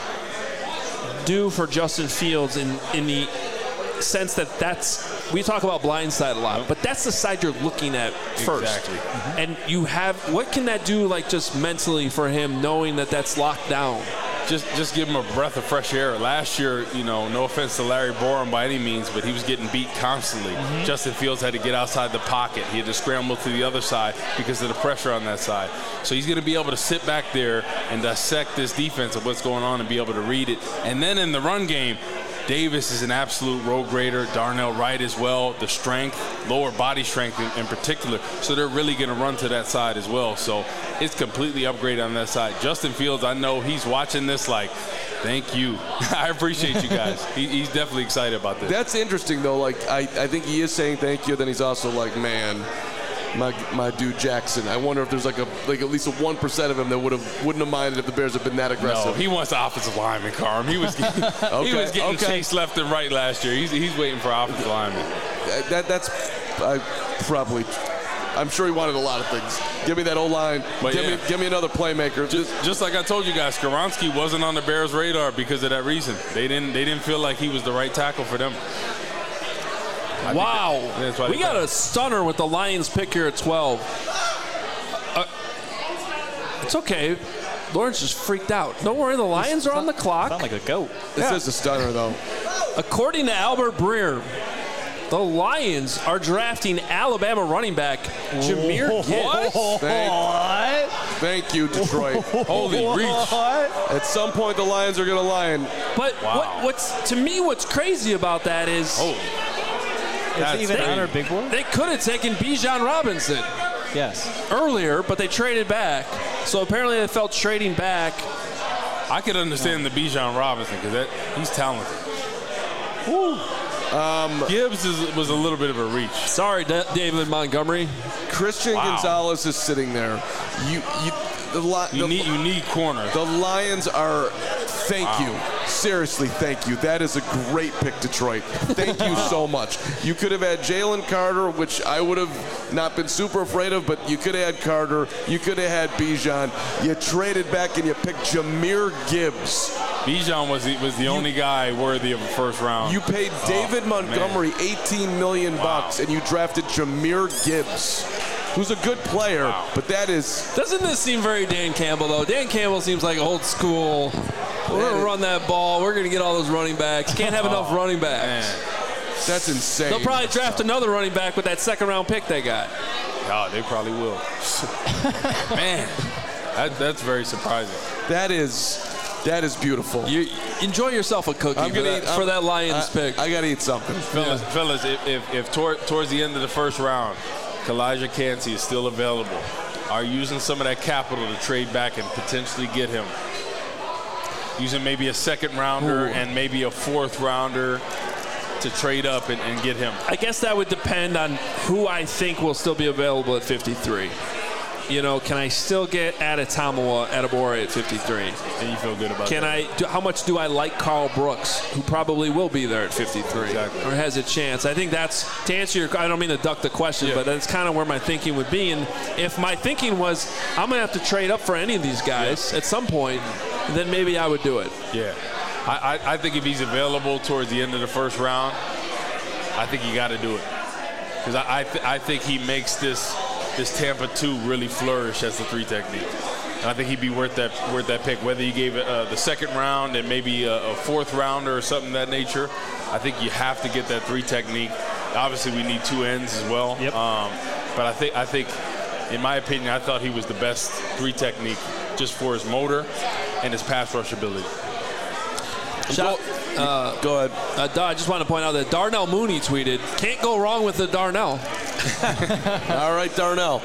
do for Justin Fields in the sense that's we talk about blind side a lot, but that's the side you're looking at first. Exactly. Mm-hmm. And you have what can that do like just mentally for him knowing that that's locked down? Just give him a breath of fresh air. Last year, no offense to Larry Borum by any means, but he was getting beat constantly. Mm-hmm. Justin Fields had to get outside the pocket. He had to scramble to the other side because of the pressure on that side. So he's going to be able to sit back there and dissect this defense of what's going on and be able to read it. And then in the run game, Davis is an absolute road grader. Darnell Wright as well. The strength, lower body strength in particular. So they're really going to run to that side as well. So it's completely upgraded on that side. Justin Fields, I know he's watching this like, thank you. I appreciate you guys. He's definitely excited about this. That's interesting, though. Like, I think he is saying thank you. Then he's also like, man, my dude Jackson. I wonder if there's like at least a 1% of him that wouldn't have minded if the Bears had been that aggressive. No, he wants the offensive lineman, Carm. He was getting chased left and right last year. He's waiting for offensive lineman. I'm sure he wanted a lot of things. Give me that O-line. Give me another playmaker. Just like I told you guys, Skoronski wasn't on the Bears' radar because of that reason. They didn't feel like he was the right tackle for them. Wow. We got a stunner with the Lions pick here at 12. It's okay. Lawrence just freaked out. Don't worry, the Lions are on the clock. Sound like a goat. This is a stunner, though. According to Albert Breer, the Lions are drafting Alabama running back Jahmyr Gibbs. Thank you, Detroit. Holy reach. At some point, the Lions are going to lion. But what's crazy about that is It's even on our big board? they could have taken Bijan Robinson Yes. earlier, but they traded back. So apparently they felt trading back. I could understand the Bijan Robinson because he's talented. Gibbs was a little bit of a reach. Sorry, David Montgomery. Christian Gonzalez is sitting there. You need corners. The Lions are. Thank you. Seriously, thank you. That is a great pick, Detroit. Thank you so much. You could have had Jalen Carter, which I would have not been super afraid of, but you could have had Carter. You could have had Bijan. You traded back and you picked Jahmyr Gibbs. Bijan was the only guy worthy of a first round. You paid David Montgomery $18 million, and you drafted Jahmyr Gibbs, who's a good player, but that is... Doesn't this seem very Dan Campbell, though? Dan Campbell seems like old school. We're going to run that ball. We're going to get all those running backs. Can't have enough running backs. That's insane. They'll probably draft another running back with that second-round pick they got. Oh, they probably will. Man, that's very surprising. That is beautiful. You enjoy yourself a cookie for that Lions pick. I got to eat something. Fellas, if towards the end of the first round, Kalijah Kancey is still available, are you using some of that capital to trade back and potentially get him? Using maybe a second rounder and maybe a fourth rounder to trade up and get him. I guess that would depend on who I think will still be available at 53. You know, can I still get Adetomiwa Adebawore at 53? And you feel good about that? How much do I like Carl Brooks, who probably will be there at 53 or has a chance? I think that's, to answer your, I don't mean to duck the question, but that's kind of where my thinking would be. And if my thinking was I'm going to have to trade up for any of these guys at some point, then maybe I would do it. Yeah. I think if he's available towards the end of the first round, I think you got to do it. Because I think he makes this Tampa 2 really flourish as the 3 technique. And I think he'd be worth that pick, whether you gave it the second round and maybe a fourth rounder or something of that nature. I think you have to get that 3 technique. Obviously, we need 2 ends as well. Yep. But I think, in my opinion, I thought he was the best 3 technique just for his motor and his pass rush ability. Go ahead. I just want to point out that Darnell Mooney tweeted, "Can't go wrong with the Darnell." All right, Darnell.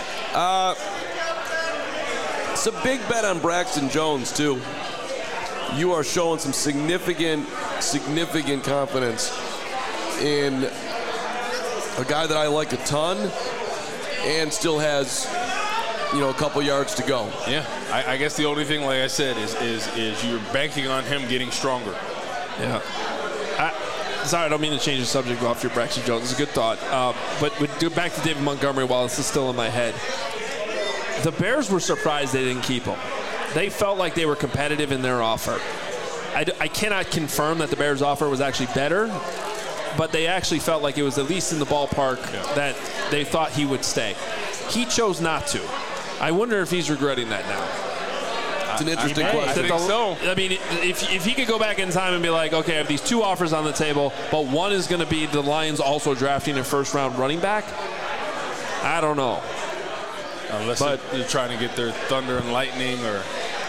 It's a big bet on Braxton Jones, too. You are showing some significant confidence in a guy that I like a ton and still has, a couple yards to go. Yeah, I guess the only thing, like I said, is you're banking on him getting stronger. Yeah. Sorry, I don't mean to change the subject off your Braxton Jones. It's a good thought. But go back to David Montgomery while this is still in my head. The Bears were surprised they didn't keep him. They felt like they were competitive in their offer. I cannot confirm that the Bears' offer was actually better, but they actually felt like it was at least in the ballpark that they thought he would stay. He chose not to. I wonder if he's regretting that now. It's an interesting question. I think so. I mean, if he could go back in time and be like, okay, I have these 2 offers on the table, but one is going to be the Lions also drafting a first-round running back, I don't know. Unless they're trying to get their thunder and lightning or,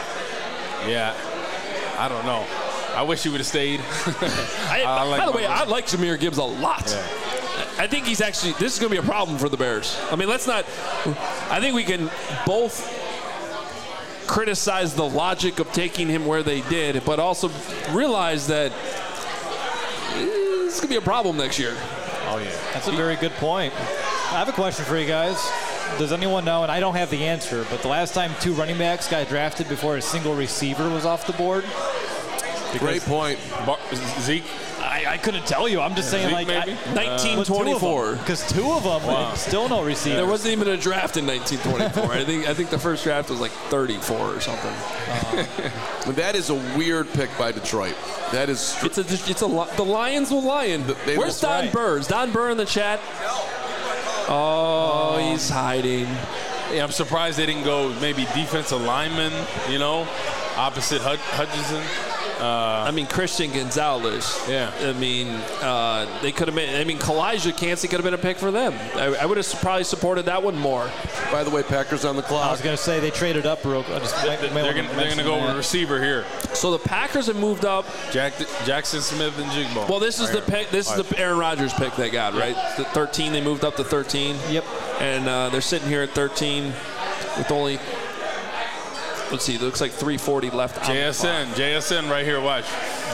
I don't know. I wish he would have stayed. By the way, I like Jahmyr Gibbs a lot. Yeah. I think he's actually, this is going to be a problem for the Bears. I mean, I think we can both criticize the logic of taking him where they did, but also realize that this is going to be a problem next year. Oh, yeah. That's a very good point. I have a question for you guys. Does anyone know, and I don't have the answer, but the last time 2 running backs got drafted before a single receiver was off the board? Great point. Zeke? I couldn't tell you. I'm just saying, Zeke, like, maybe? 1924. Because 2 of them, still no receiver. There wasn't even a draft in 1924. I think the first draft was like 34 or something. That is a weird pick by Detroit. That is. The Lions will lion. Where's Don Burr? Is Don Burr in the chat? Oh, he's hiding. Yeah, I'm surprised they didn't go maybe defensive lineman, opposite Hutchinson. Christian Gonzalez. Yeah. They could have been. Kalijah Cansey could have been a pick for them. I would have probably supported that one more. By the way, Packers on the clock. I was going to say they traded up real quick. They're going to go with receiver here. So the Packers have moved up. Jackson Smith and Jigbo. Well, this is the pick. This is the Aaron Rodgers pick they got, right? The 13. They moved up to 13. Yep. And they're sitting here at 13 with only. Let's see. It looks like 3:40 left. JSN right here. Watch.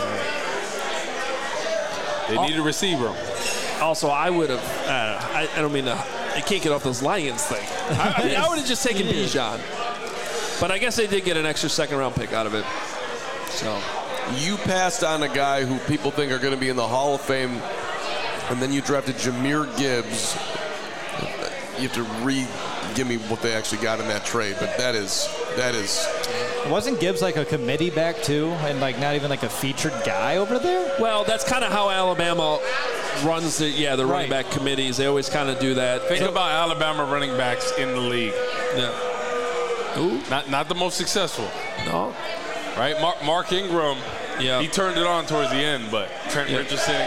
They need a receiver. Also, I would have. I don't mean to. I can't get off those Lions thing. I would have just taken Bijan. But I guess they did get an extra second-round pick out of it. So you passed on a guy who people think are going to be in the Hall of Fame, and then you drafted Jahmyr Gibbs. You have to give me what they actually got in that trade, but that is. Wasn't Gibbs like a committee back too, and like not even like a featured guy over there? Well, that's kind of how Alabama runs the running back committees. They always kind of do that. Think about Alabama running backs in the league. Yeah. Who? Not the most successful. No. Right? Mark Ingram. Yeah. He turned it on towards the end, but Trent Richardson.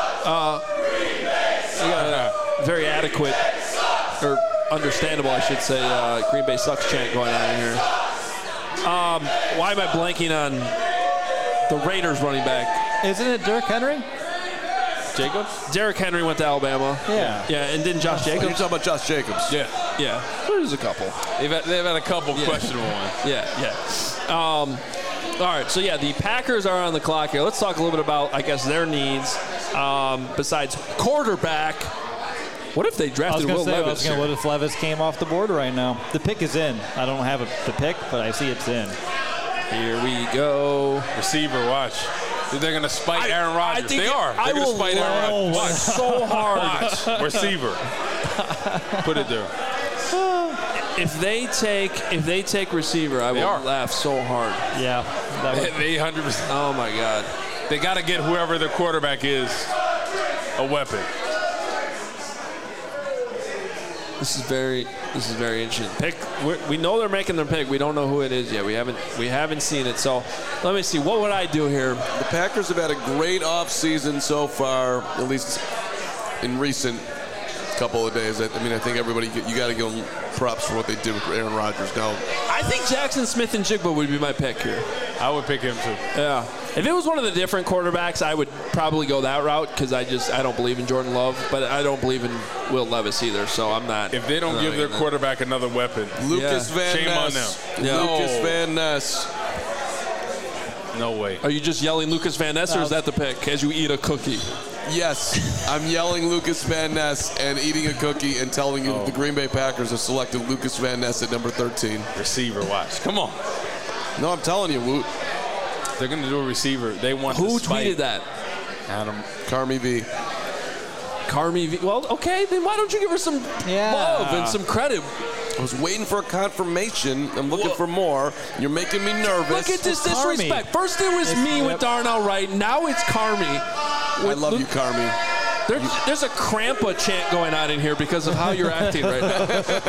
Very adequate, or understandable, I should say, Green Bay sucks chant going on in here. Why am I blanking on the Raiders running back? Isn't it Derrick Henry? Jacobs? Derrick Henry went to Alabama. Yeah. Yeah, and didn't Josh Jacobs? You're talking about Josh Jacobs. Yeah. Yeah. There's a couple. They've had a couple questionable ones. Yeah. All right, so the Packers are on the clock here. Let's talk a little bit about, I guess, their needs. Besides quarterback, what if they drafted Will Levis? What if Levis came off the board right now? The pick is in. I don't have the pick, but I see it's in. Here we go. Receiver, watch. They're going to spite Aaron Rodgers. They are. They're going to spite Aaron Rodgers. Watch. So hard. Watch. Receiver. Put it there. If they take receiver, I will laugh so hard. Yeah. They 100%. Oh, my God. They got to get whoever their quarterback is a weapon. This is very interesting. Pick. We know they're making their pick. We don't know who it is yet. We haven't seen it. So let me see. What would I do here? The Packers have had a great offseason so far, at least in recent couple of days. I think everybody, you got to give them props for what they did with Aaron Rodgers. Now, I think Jackson Smith and Jigba would be my pick here. I would pick him too. Yeah. If it was one of the different quarterbacks, I would probably go that route because I don't believe in Jordan Love, but I don't believe in Will Levis either. So I'm not. If they don't give their quarterback another weapon, Lucas Van Ness. Shame on them. Yeah. Lucas Van Ness. No way. Are you just yelling Lucas Van Ness, or is that the pick as you eat a cookie? Yes, I'm yelling Lucas Van Ness and eating a cookie and telling you that the Green Bay Packers have selected Lucas Van Ness at number 13. Receiver, watch. Come on. No, I'm telling you, they're going to do a receiver. They want Who tweeted that? Adam. Carmi V. Carmi V. Well, okay, then why don't you give her some love and some credit? I was waiting for a confirmation. I'm looking for more. You're making me nervous. Look at this disrespect. First it was me with Darnell Wright. Now it's Carmi. I love you, Carmi. There's a Crampa chant going on in here because of how you're acting right now.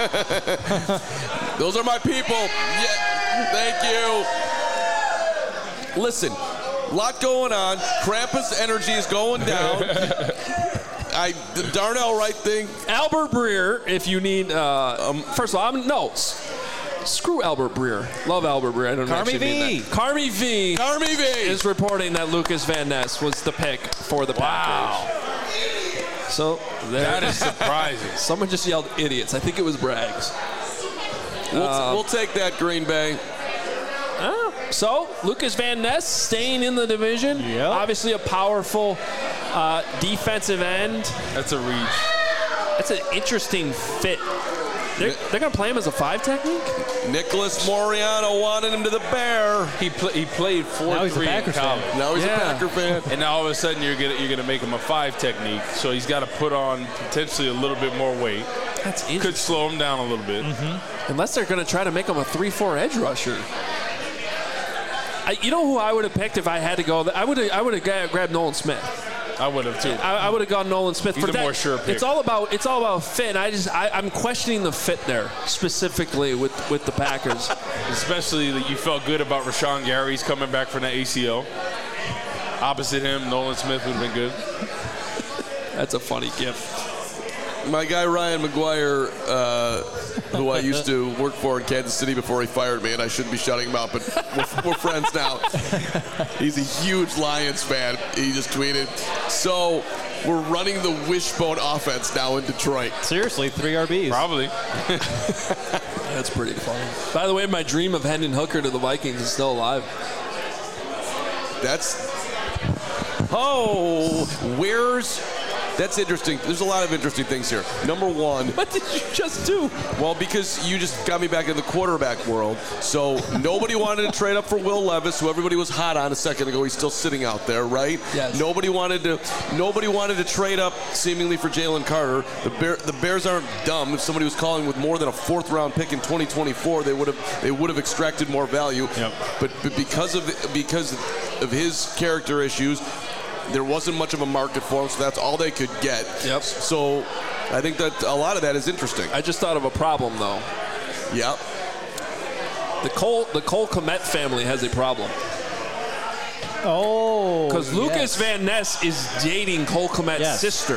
Those are my people. Yeah, thank you. Listen, a lot going on. Krampus energy is going down. The Darnell Wright thing. Albert Breer, if you need. First of all, screw Albert Breer. Love Albert Breer. I don't actually mean that. Carmi V is reporting that Lucas Van Ness was the pick for the Packers. Wow. So that is surprising. Someone just yelled idiots. I think it was Braggs. We'll take that, Green Bay. So Lucas Van Ness staying in the division. Yep. Obviously a powerful defensive end. That's a reach. That's an interesting fit. They're going to play him as a 5 technique? Nicholas Moriano wanted him to the Bear. He played 4-3 in college. Now he's a Packer fan. And now all of a sudden you're gonna make him a 5 technique. So he's got to put on potentially a little bit more weight. That's interesting. Could slow him down a little bit. Mm-hmm. Unless they're going to try to make him a 3-4 edge rusher. You know who I would have picked if I had to go? I would have grabbed Nolan Smith. I would have too. I would have gone Nolan Smith. He's for a that. more sure pick. It's all about fit. And I'm questioning the fit there specifically with the Packers. Especially that you felt good about Rashawn Gary's coming back from the ACL. Opposite him, Nolan Smith would have been good. That's a funny gift. My guy Ryan McGuire, who I used to work for in Kansas City before he fired me, and I shouldn't be shutting him out, but we're friends now. He's a huge Lions fan. He just tweeted, so we're running the wishbone offense now in Detroit. Seriously, 3 RBs. Probably. That's pretty funny. By the way, my dream of Hendon Hooker to the Vikings is still alive. That's interesting. There's a lot of interesting things here. Number one. What did you just do? Well, because you just got me back in the quarterback world. So nobody wanted to trade up for Will Levis, who everybody was hot on a second ago. He's still sitting out there, right? Yes. Nobody wanted to trade up seemingly for Jalen Carter. The Bears aren't dumb. If somebody was calling with more than a 4th round pick in 2024, they would have extracted more value. Yep. But because of his character issues, there wasn't much of a market for him, so that's all they could get. Yep. So I think that a lot of that is interesting. I just thought of a problem, though. Yep. The Cole Kmet family has a problem. Oh. Because Lucas Van Ness is dating Cole Kmet's sister.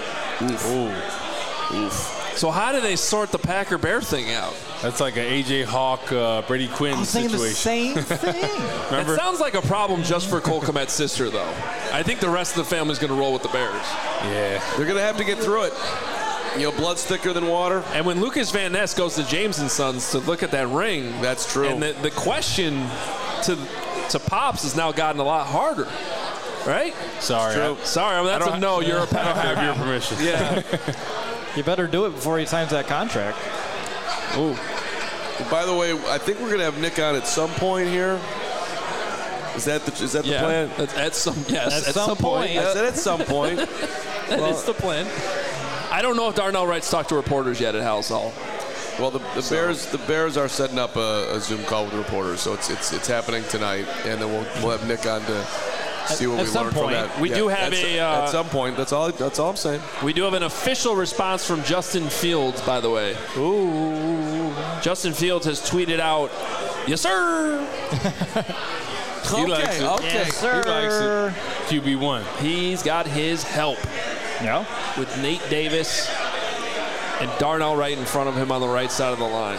Oof. So how do they sort the Packer-Bear thing out? That's like an A.J. Hawk, Brady Quinn situation. I'm saying the same thing. It sounds like a problem just for Cole Kmet's sister, though. I think the rest of the family's going to roll with the Bears. Yeah. They're going to have to get through it. Blood's thicker than water. And when Lucas Van Ness goes to James & Sons to look at that ring. That's true. And the question to Pops has now gotten a lot harder. Right? Sorry. That's a no. You're a Packer. I don't have your permission. Yeah. You better do it before he signs that contract. Ooh. By the way, I think we're going to have Nick on at some point here. Is that the plan? At some point. I said at some point. That is the plan. I don't know if Darnell Wright's talked to reporters yet at House Hall. Well, the Bears are setting up a Zoom call with the reporters, so it's happening tonight, and then we'll have Nick on to see what we learned from that. We do have at some point. That's all I'm saying. We do have an official response from Justin Fields, by the way. Ooh. Justin Fields has tweeted out, "Yes, sir." He likes it. Okay. Yes, sir. He likes it. QB1. He's got his help. Yeah. With Nate Davis and Darnell Wright in front of him on the right side of the line.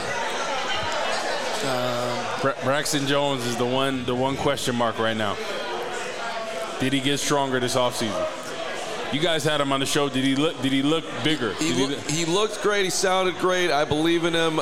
Braxton Jones is the one question mark right now. Did he get stronger this offseason? You guys had him on the show. Did he look bigger? He looked great. He sounded great. I believe in him.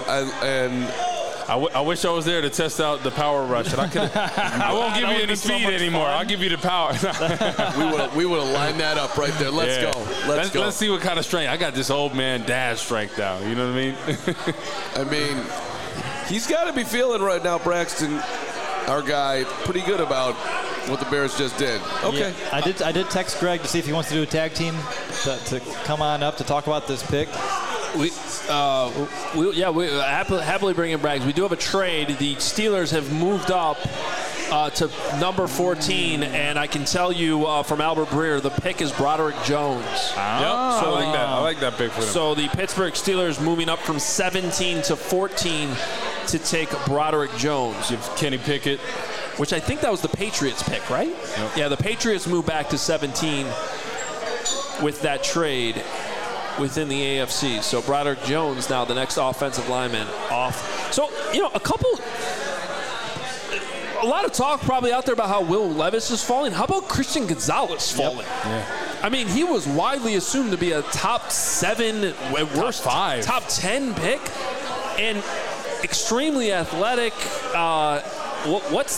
I wish I was there to test out the power rush. And I won't give you any speed anymore. I'll give you the power. we would have lined that up right there. Let's go. Let's see what kind of strength. I got this old man dad strength now. You know what I mean? I mean, he's got to be feeling right now, Braxton, our guy, pretty good about what the Bears just did. Okay. Yeah, I did text Greg to see if he wants to do a tag team to come on up to talk about this pick. We happily bring in Braggs. We do have a trade. The Steelers have moved up to number 14, and I can tell you from Albert Breer, the pick is Broderick Jones. Yep. So I like that pick for him. So the Pittsburgh Steelers moving up from 17 to 14 to take Broderick Jones. You have Kenny Pickett. Which I think that was the Patriots pick, right? Yep. Yeah, the Patriots moved back to 17 with that trade within the AFC. So Broderick Jones now the next offensive lineman off. So, a lot of talk probably out there about how Will Levis is falling. How about Christian Gonzalez falling? Yep. Yeah. I mean, he was widely assumed to be a top 7, at worst, top 10 pick, and extremely athletic. What's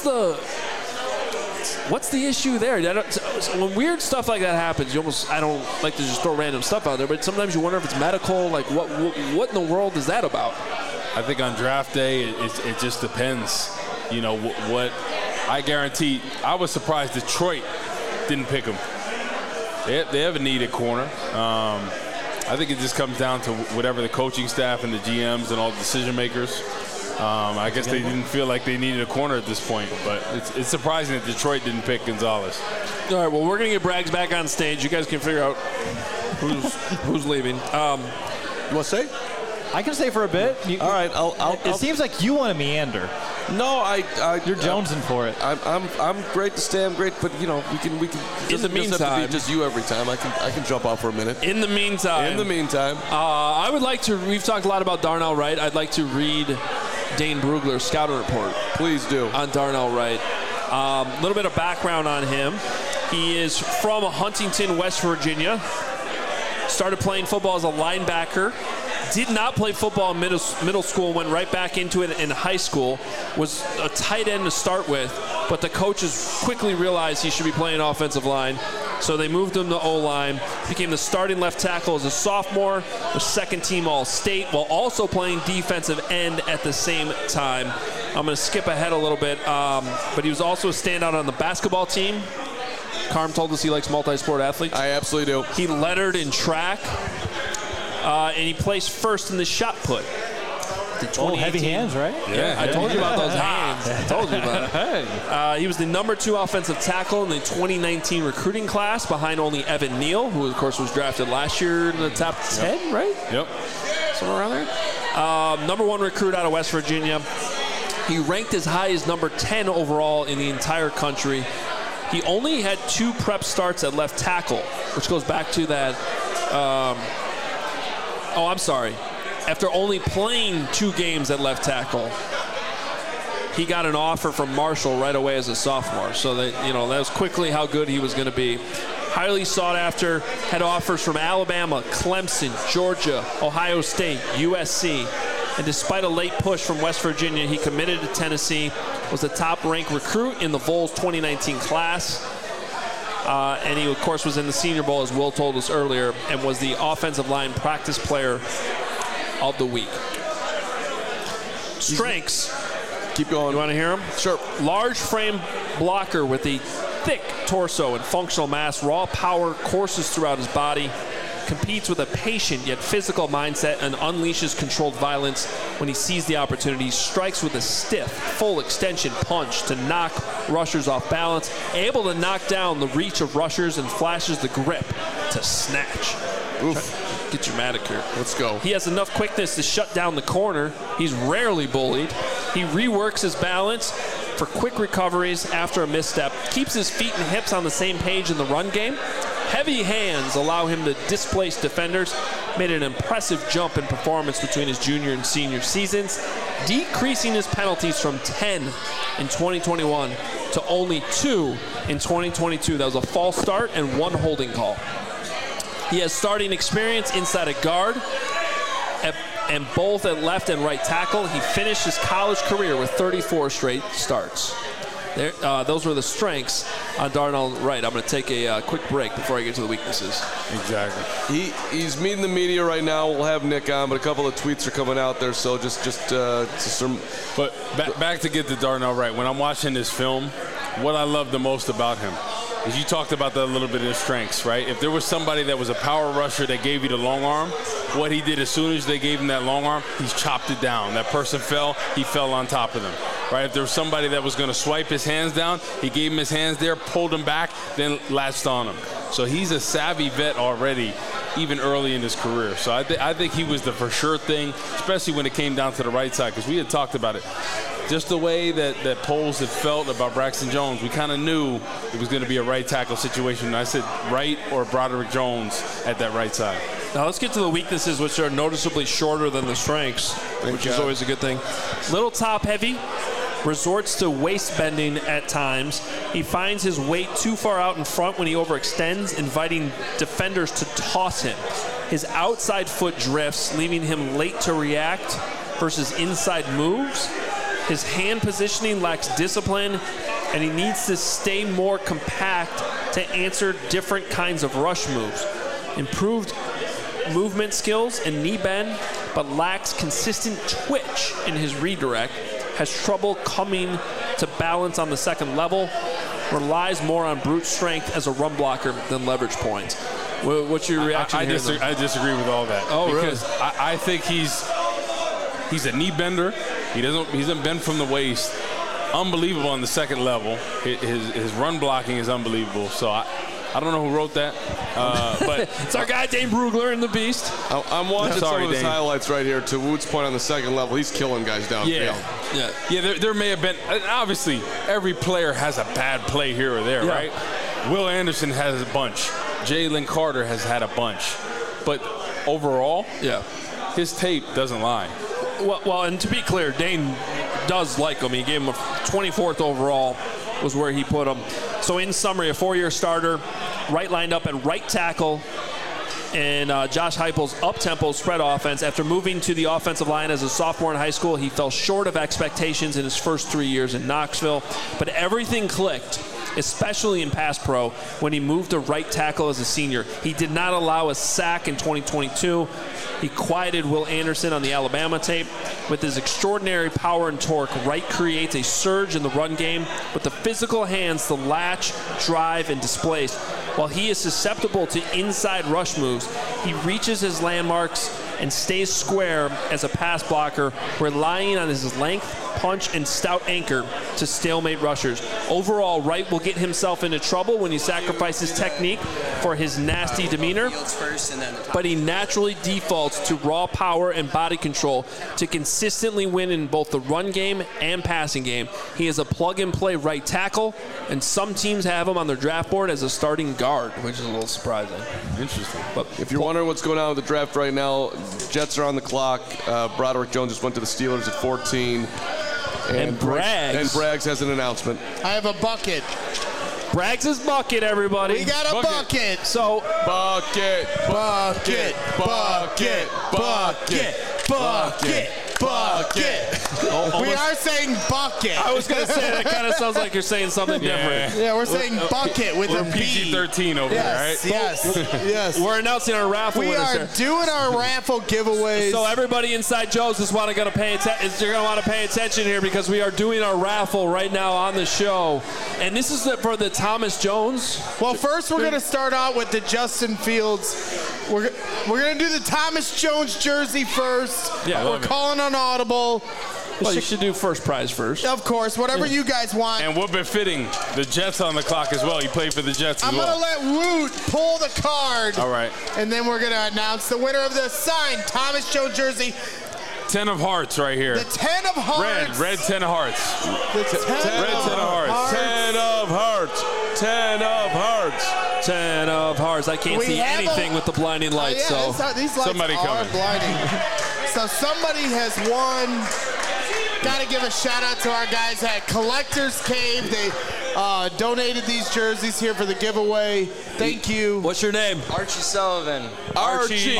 the issue there? When weird stuff like that happens, I don't like to just throw random stuff out there, but sometimes you wonder if it's medical. Like, what in the world is that about? I think on draft day, it just depends. What I guarantee. I was surprised Detroit didn't pick him. They have a needed corner. I think it just comes down to whatever the coaching staff and the GMs and all the decision makers I guess they didn't feel like they needed a corner at this point, but it's surprising that Detroit didn't pick Gonzalez. All right, well, we're going to get Braggs back on stage. You guys can figure out who's leaving. You want to say? I can stay for a bit. All right, It seems like you want to meander. No, You're jonesing for it. I'm great to stay. I'm great, but we can. In the meantime, have to be just you every time. I can jump out for a minute. In the meantime, I would like to. We've talked a lot about Darnell Wright. I'd like to read Dane Brugler's scouting report. Please do. On Darnell Wright. A little bit of background on him. He is from Huntington, West Virginia. Started playing football as a linebacker. Did not play football in middle school, went right back into it in high school. Was a tight end to start with, but the coaches quickly realized he should be playing offensive line, so they moved him to O-line. Became the starting left tackle as a sophomore, was second-team All-State, while also playing defensive end at the same time. I'm going to skip ahead a little bit, but he was also a standout on the basketball team. Carm told us he likes multi-sport athletes. I absolutely do. He lettered in track. And he placed first in the shot put. Heavy hands, right? Yeah, I told you about those hands. I told you about it. He was the number 2 offensive tackle in the 2019 recruiting class, behind only Evan Neal, who, of course, was drafted last year in the top 10, right? Yep. Somewhere around there. Number 1 recruit out of West Virginia. He ranked as high as number 10 overall in the entire country. He only had 2 prep starts at left tackle, which goes back to that... I'm sorry. After only playing 2 games at left tackle, he got an offer from Marshall right away as a sophomore. So that was quickly how good he was going to be. Highly sought after, had offers from Alabama, Clemson, Georgia, Ohio State, USC. And despite a late push from West Virginia, he committed to Tennessee, was the top-ranked recruit in the Vols 2019 class. And he, of course, was in the Senior Bowl, as Will told us earlier, and was the offensive line practice player of the week. Strengths. Keep going. You want to hear him? Sure. Large frame blocker with a thick torso and functional mass, raw power courses throughout his body, competes with a patient yet physical mindset, and unleashes controlled violence when he sees the opportunity. Strikes with a stiff, full extension punch to knock rushers off balance, able to knock down the reach of rushers, and flashes the grip to snatch. Oof. Get dramatic here. Let's go. He has enough quickness to shut down the corner. He's rarely bullied. He reworks his balance for quick recoveries after a misstep, keeps his feet and hips on the same page in the run game. Heavy hands allow him to displace defenders. Made an impressive jump in performance between his junior and senior seasons, decreasing his penalties from 10 in 2021 to only 2 in 2022. That was a false start and 1 holding call. He has starting experience inside a guard and both at left and right tackle. He finished his college career with 34 straight starts. Those were the strengths on Darnell Wright. I'm going to take a quick break before I get to the weaknesses. Exactly. He's meeting the media right now. We'll have Nick on, but a couple of tweets are coming out there, so But back to get to Darnell Wright. When I'm watching this film, what I love the most about him is you talked about that a little bit of his strengths, right? If there was somebody that was a power rusher that gave you the long arm, what he did as soon as they gave him that long arm, he's chopped it down. That person fell, he fell on top of them, right? If there was somebody that was going to swipe his hands down, he gave him his hands there, pulled him back, then latched on him. So he's a savvy vet already, even early in his career. So I think he was the for sure thing, especially when it came down to the right side, because we had talked about it. Just the way that Poles had felt about Braxton Jones, we kind of knew it was going to be a right tackle situation. And I said Wright or Broderick Jones at that right side. Now let's get to the weaknesses, which are noticeably shorter than the strengths, which is always a good thing. Little top heavy, resorts to waist bending at times. He finds his weight too far out in front when he overextends, inviting defenders to toss him. His outside foot drifts, leaving him late to react versus inside moves. His hand positioning lacks discipline, and he needs to stay more compact to answer different kinds of rush moves. Improved movement skills and knee bend, but lacks consistent twitch in his redirect. Has trouble coming to balance on the second level. Relies more on brute strength as a run blocker than leverage points. What's your reaction I disagree with all that. Oh, because really? I think he's a knee bender. He doesn't bend from the waist. Unbelievable on the second level. His run blocking is unbelievable. So I don't know who wrote that, but it's our guy Dane Brugler in the Beast. I'm watching some of his highlights right here. To Woot's point on the second level, he's killing guys downfield. Yeah. There may have been. Obviously, every player has a bad play here or there, right? Will Anderson has a bunch. Jalen Carter has had a bunch, but overall, his tape doesn't lie. Well, and to be clear, Dane does like him. He gave him a 24th overall was where he put him. So in summary, a 4-year starter, right lined up at right tackle, and Josh Heupel's up-tempo spread offense. After moving to the offensive line as a sophomore in high school, he fell short of expectations in his first 3 years in Knoxville, but everything clicked, especially in pass pro, when he moved to right tackle as a senior. He did not allow a sack in 2022. He quieted Will Anderson on the Alabama tape. With his extraordinary power and torque, Wright creates a surge in the run game with the physical hands to latch, drive, and displace. While he is susceptible to inside rush moves, he reaches his landmarks and stays square as a pass blocker, relying on his length, punch, and stout anchor to stalemate rushers. Overall, Wright will get himself into trouble when he sacrifices technique for his nasty demeanor, but he naturally defaults to raw power and body control to consistently win in both the run game and passing game. He is a plug-and-play right tackle, and some teams have him on their draft board as a starting guard, which is a little surprising. Interesting. But if you're wondering what's going on with the draft right now, Jets are on the clock. Broderick Jones just went to the Steelers at 14. And Braggs has an announcement. I have a bucket. Braggs' bucket, everybody. We got a bucket. So bucket. We are saying bucket. I was going to say, that kind of sounds like you're saying something different. Yeah, we're saying bucket with a B. PG-13 over there, right? Yes. We're announcing our raffle We winners are here. doing our raffle giveaways. So everybody inside Joe's is going to pay attention here because we are doing our raffle right now on the show. And this is for the Thomas Jones. Well, first we're going to start out with the Justin Fields. We're going to do the Thomas Jones jersey first. Yeah, we're calling on Audible. Well, you should do first prize first. Of course, whatever you guys want. And we're befitting the Jets on the clock as well. You play for the Jets as well. I'm going to let Woot pull the card. All right. And then we're going to announce the winner of the signed Thomas Jones jersey. 10 of hearts right here. The 10 of hearts. Red 10 of hearts. Red 10 of hearts. 10 of hearts. 10 of hearts. 10 of hearts. I can't see anything with the blinding lights. These lights somebody are coming. blinding. So somebody has won. Got to give a shout out to our guys at Collector's Cave. They donated these jerseys here for the giveaway. Thank you. What's your name? Archie Sullivan. Archie.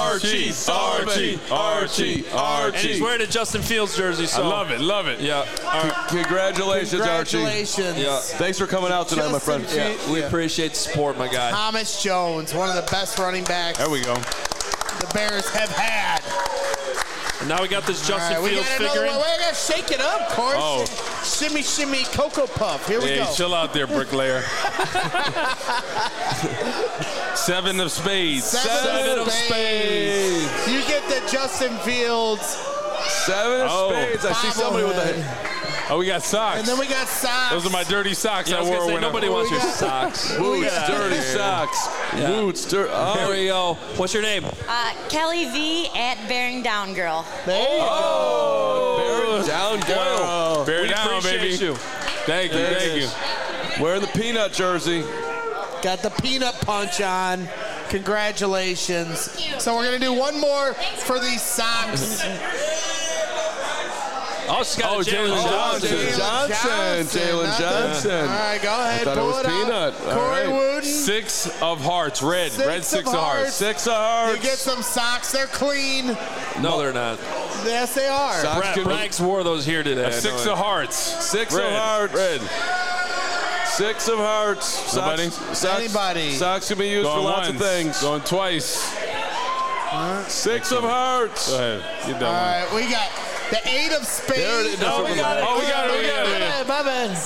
And he's wearing a Justin Fields jersey. So. I love it. Yeah. Congratulations, Archie. Yeah. Thanks for coming out tonight, my friend. We appreciate the support, my guy. Thomas Jones, one of the best running backs There we go. the Bears have had. And now we got this Justin Fields figurine. We got to shake it up, Corey. Oh. Shimmy, shimmy, Cocoa Puff. Here we go. Chill out there, bricklayer. 7 of spades. 7 of spades. You get the Justin Fields. 7 of spades. I see somebody with a... Oh, we got socks. And then we got socks. Those are my dirty socks I was going to say, nobody wants your socks. Woots, dirty socks. Woots, dirty... Here we go. What's your name? Kelly V at Bearing Down Girl. There you go. Bear down, girl. Bear down, baby. You. Thank you. Wearing the peanut jersey. Got the peanut punch on. Congratulations. So we're going to do one more for these socks. Oh, she's got Jalen Johnson. All right, go ahead. I thought pull it was peanut. Out. Corey Wooden. 6 of hearts. Red 6 of hearts. 6 of hearts. You get some socks. They're clean. No, they're not. Yes, they are. Braggs wore those here today. 6 of hearts. 6 of hearts. Red. 6 of hearts. Nobody? Anybody? Socks can be used for lots of things. Going twice. 6 of hearts. Go ahead. Get that All one. right, we got the 8 of spades. There it is. No, we got it. Oh, we got it. My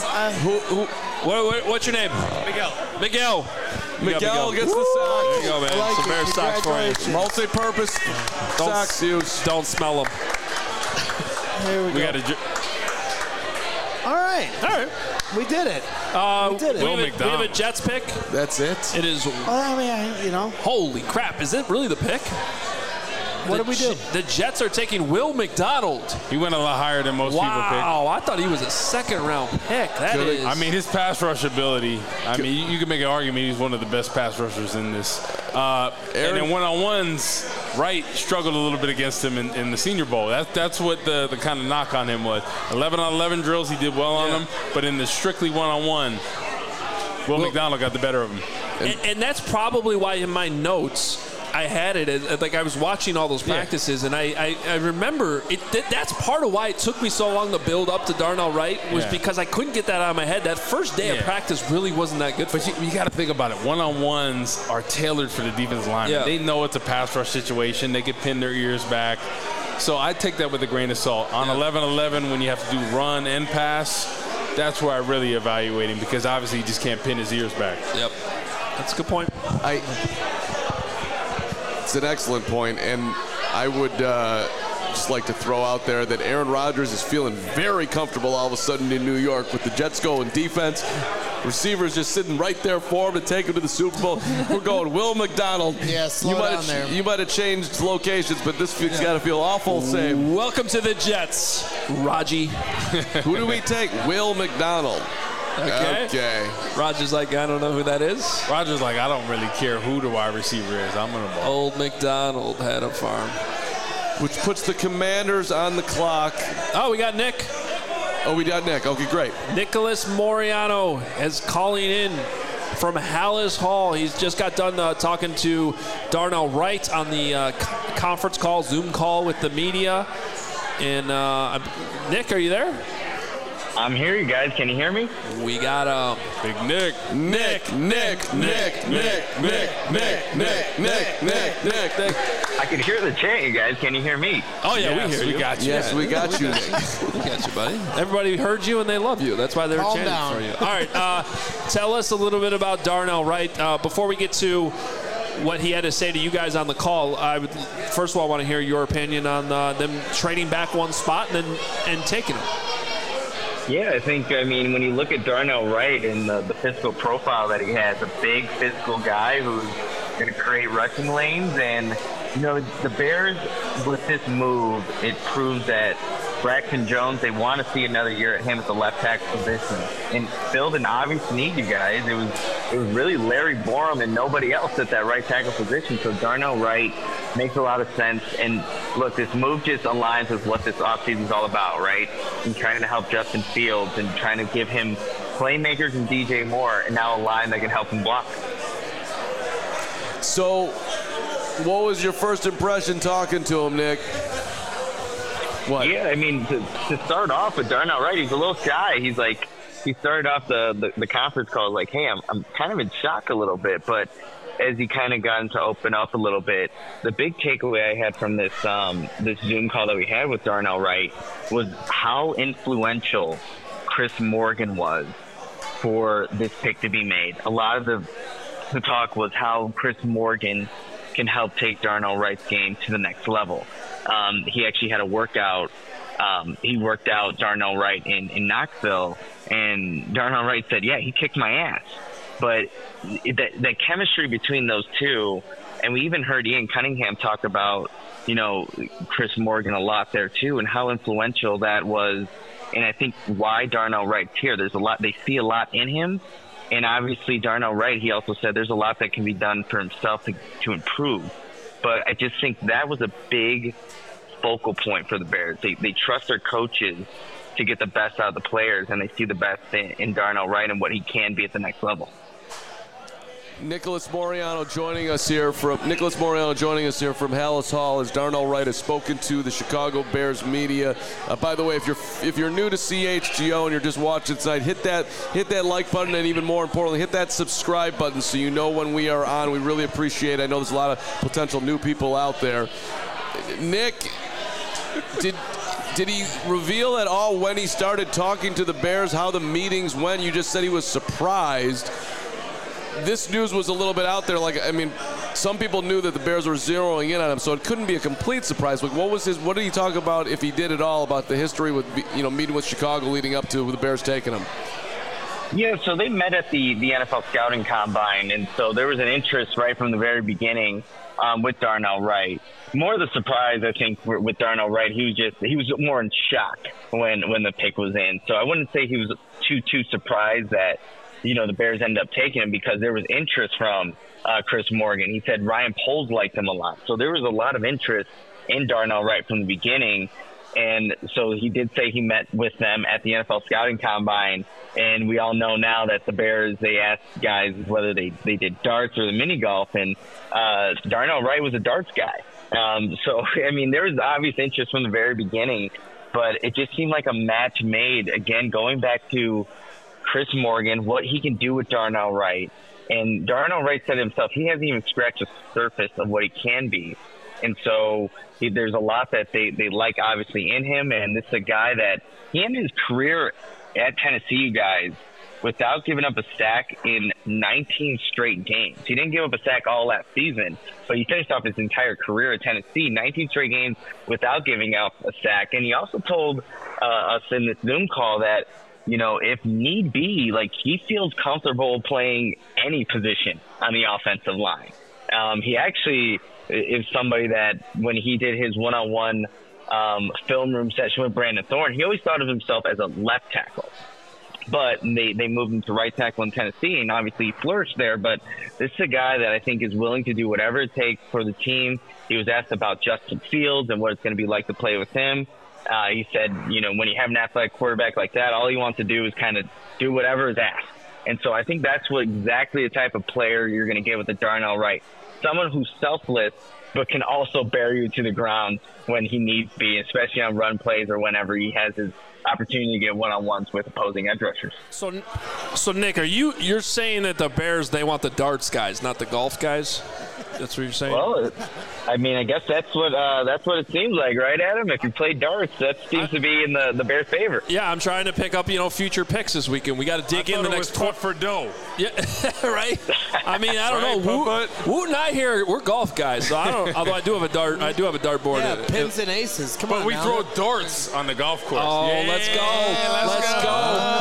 bad. What's your name? Miguel. Miguel gets the sock. There you go, man. Some Bears socks for you. Multi-purpose socks used. Don't smell them. Here we go. All right. We did it. We did it. We have a Jets pick. That's it. It is. Well, I mean, Holy crap! Is it really the pick? What did we do? The Jets are taking Will McDonald. He went a lot higher than most people picked. Wow, I thought he was a second-round pick. That is. I mean, his pass rush ability. I mean, you can make an argument he's one of the best pass rushers in this. And then one-on-ones, Wright struggled a little bit against him in the Senior Bowl. That's what the kind of knock on him was. 11-on-11 drills, he did well on them. But in the strictly one-on-one, Will McDonald got the better of him. And that's probably why in my notes I had it as, like, I was watching all those practices, and I remember that's part of why it took me so long to build up to Darnell Wright was because I couldn't get that out of my head. That first day of practice really wasn't that good. But you got to think about it. One-on-ones are tailored for the defensive lineman. Yeah. They know it's a pass rush situation. They can pin their ears back. So I take that with a grain of salt. On 11-11, when you have to do run and pass, that's where I really evaluate him because obviously he just can't pin his ears back. Yep. That's a good point. It's an excellent point, and I would just like to throw out there that Aaron Rodgers is feeling very comfortable all of a sudden in New York with the Jets going defense. Receivers just sitting right there for him to take him to the Super Bowl. We're going Will McDonald. Yeah, slow down there. You might have changed locations, but this has got to feel awful same. Welcome to the Jets, Raji. Who do we take? Will McDonald. Okay. Roger's like, I don't know who that is. Roger's like, I don't really care who the wide receiver is. I'm going to ball. Old McDonald had a farm. Which puts the Commanders on the clock. Oh, we got Nick. Oh, we got Nick. Okay, great. Nicholas Moriano is calling in from Hallis Hall. He's just got done talking to Darnell Wright on the conference call, Zoom call with the media. And Nick, are you there? I'm here, you guys. Can you hear me? We got Big Nick. Nick. I could hear the chant, you guys. Can you hear me? Oh, yeah, we hear you. We got you. Yes, we got you, Nick. We got you, buddy. Everybody heard you and they love you. That's why they're Calm chanting down. for you. All right, tell us a little bit about Darnell Wright. Before we get to what he had to say to you guys on the call, I would first of all want to hear your opinion on them trading back one spot and taking him. Yeah, I mean, when you look at Darnell Wright and the physical profile that he has, a big physical guy who's going to create rushing lanes. And, you know, the Bears, with this move, it proves that Braxton Jones, they want to see another year at him at the left tackle position. And filled an obvious need, you guys. It was really Larry Borum and nobody else at that right tackle position. So Darnell Wright makes a lot of sense. And look, this move just aligns with what this offseason is all about, right? And trying to help Justin Fields and trying to give him playmakers and DJ Moore and now a line that can help him block. So, what was your first impression talking to him, Nick? What? Yeah, I mean, to start off with Darnell Wright, he's a little shy. He's like, he started off the conference call like, hey, I'm kind of in shock a little bit. But as he kind of gotten to open up a little bit, the big takeaway I had from this Zoom call that we had with Darnell Wright was how influential Chris Morgan was for this pick to be made. A lot of the talk was how Chris Morgan can help take Darnell Wright's game to the next level. He actually had a workout. He worked out Darnell Wright in Knoxville, and Darnell Wright said, yeah, he kicked my ass. But the chemistry between those two, and we even heard Ian Cunningham talk about, you know, Chris Morgan a lot there too, and how influential that was. And I think why Darnell Wright's here, there's a lot, they see a lot in him. And obviously Darnell Wright, he also said there's a lot that can be done for himself to improve. But I just think that was a big focal point for the Bears. They trust their coaches to get the best out of the players, and they see the best in Darnell Wright and what he can be at the next level. Nicholas Moriano joining us here from Hallis Hall as Darnell Wright has spoken to the Chicago Bears media. By the way, if you're new to CHGO and you're just watching tonight, hit that like button, and even more importantly, hit that subscribe button so you know when we are on. We really appreciate it. I know there's a lot of potential new people out there. Nick, did he reveal at all when he started talking to the Bears how the meetings went? You just said he was surprised. This news was a little bit out there. Like, I mean, some people knew that the Bears were zeroing in on him, so it couldn't be a complete surprise. Like, what did he talk about, if he did at all, about the history with, meeting with Chicago leading up to the Bears taking him? Yeah, so they met at the NFL Scouting Combine, and so there was an interest right from the very beginning with Darnell Wright. More the surprise, I think, with Darnell Wright, he was more in shock when the pick was in. So I wouldn't say he was too surprised that, the Bears ended up taking him, because there was interest from Chris Morgan. He said Ryan Poles liked him a lot. So there was a lot of interest in Darnell Wright from the beginning. And so he did say he met with them at the NFL Scouting Combine. And we all know now that the Bears, they asked guys whether they did darts or the mini golf. And Darnell Wright was a darts guy. There was obvious interest from the very beginning. But it just seemed like a match made, again, going back to Chris Morgan, what he can do with Darnell Wright. And Darnell Wright said himself, he hasn't even scratched the surface of what he can be. And so there's a lot that they like, obviously, in him. And this is a guy that he ended his career at Tennessee, you guys, without giving up a sack in 19 straight games. He didn't give up a sack all last season, but he finished off his entire career at Tennessee, 19 straight games without giving up a sack. And he also told us in this Zoom call that, if need be, he feels comfortable playing any position on the offensive line. He actually is somebody that when he did his one-on-one film room session with Brandon Thorne, he always thought of himself as a left tackle. But they moved him to right tackle in Tennessee, and obviously he flourished there. But this is a guy that I think is willing to do whatever it takes for the team. He was asked about Justin Fields and what it's going to be like to play with him. He said, when you have an athletic quarterback like that, all he wants to do is kind of do whatever is asked. And so I think that's exactly the type of player you're going to get with the Darnell Wright. Someone who's selfless, but can also bury you to the ground when he needs to be, especially on run plays or whenever he has his opportunity to get one-on-ones with opposing edge rushers. So Nick, you're saying that the Bears, they want the darts guys, not the golf guys? That's what you're saying? Well, I guess that's what it seems like, right, Adam? If you play darts, that seems to be in the Bears' favor. Yeah, I'm trying to pick up, future picks this weekend. We got to dig in the next. Putt for dough. Yeah, right. I don't know. Woot and I here, we're golf guys, so I don't. Although I do have a dart board. Yeah, pins and aces. Come on. But we throw darts on the golf course. Oh, yeah, let's go. Let's go.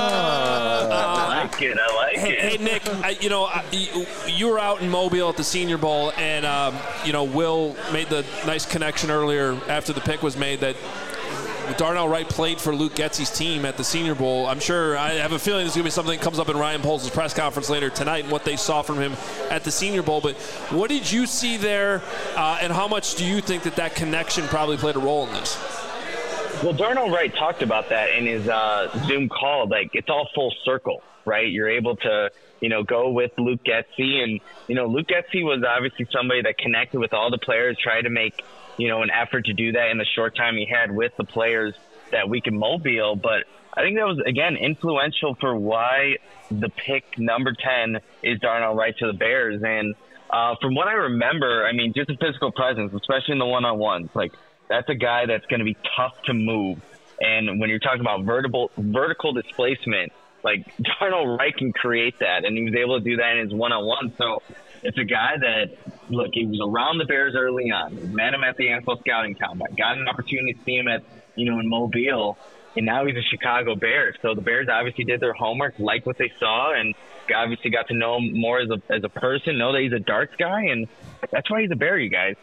I like it. Hey, Nick, you were out in Mobile at the Senior Bowl, and Will made the nice connection earlier after the pick was made that Darnell Wright played for Luke Getsy's team at the Senior Bowl. I have a feeling there's going to be something that comes up in Ryan Poles' press conference later tonight and what they saw from him at the Senior Bowl. But what did you see there, and how much do you think that connection probably played a role in this? Well, Darnell Wright talked about that in his Zoom call. It's all full circle, right? You're able to, go with Luke Getsy. And, Luke Getsy was obviously somebody that connected with all the players, tried to make, an effort to do that in the short time he had with the players that week in Mobile. But I think that was, again, influential for why the pick number 10 is Darnell Wright to the Bears. And from what I remember, just a physical presence, especially in the one-on-ones, that's a guy that's going to be tough to move. And when you're talking about vertical displacement, Darnell Wright can create that, and he was able to do that in his one-on-one. So it's a guy that, he was around the Bears early on. Met him at the NFL Scouting Combine. Got an opportunity to see him at, in Mobile, and now he's a Chicago Bear. So the Bears obviously did their homework, liked what they saw, and obviously got to know him more as a person, know that he's a darts guy, and that's why he's a Bear, you guys.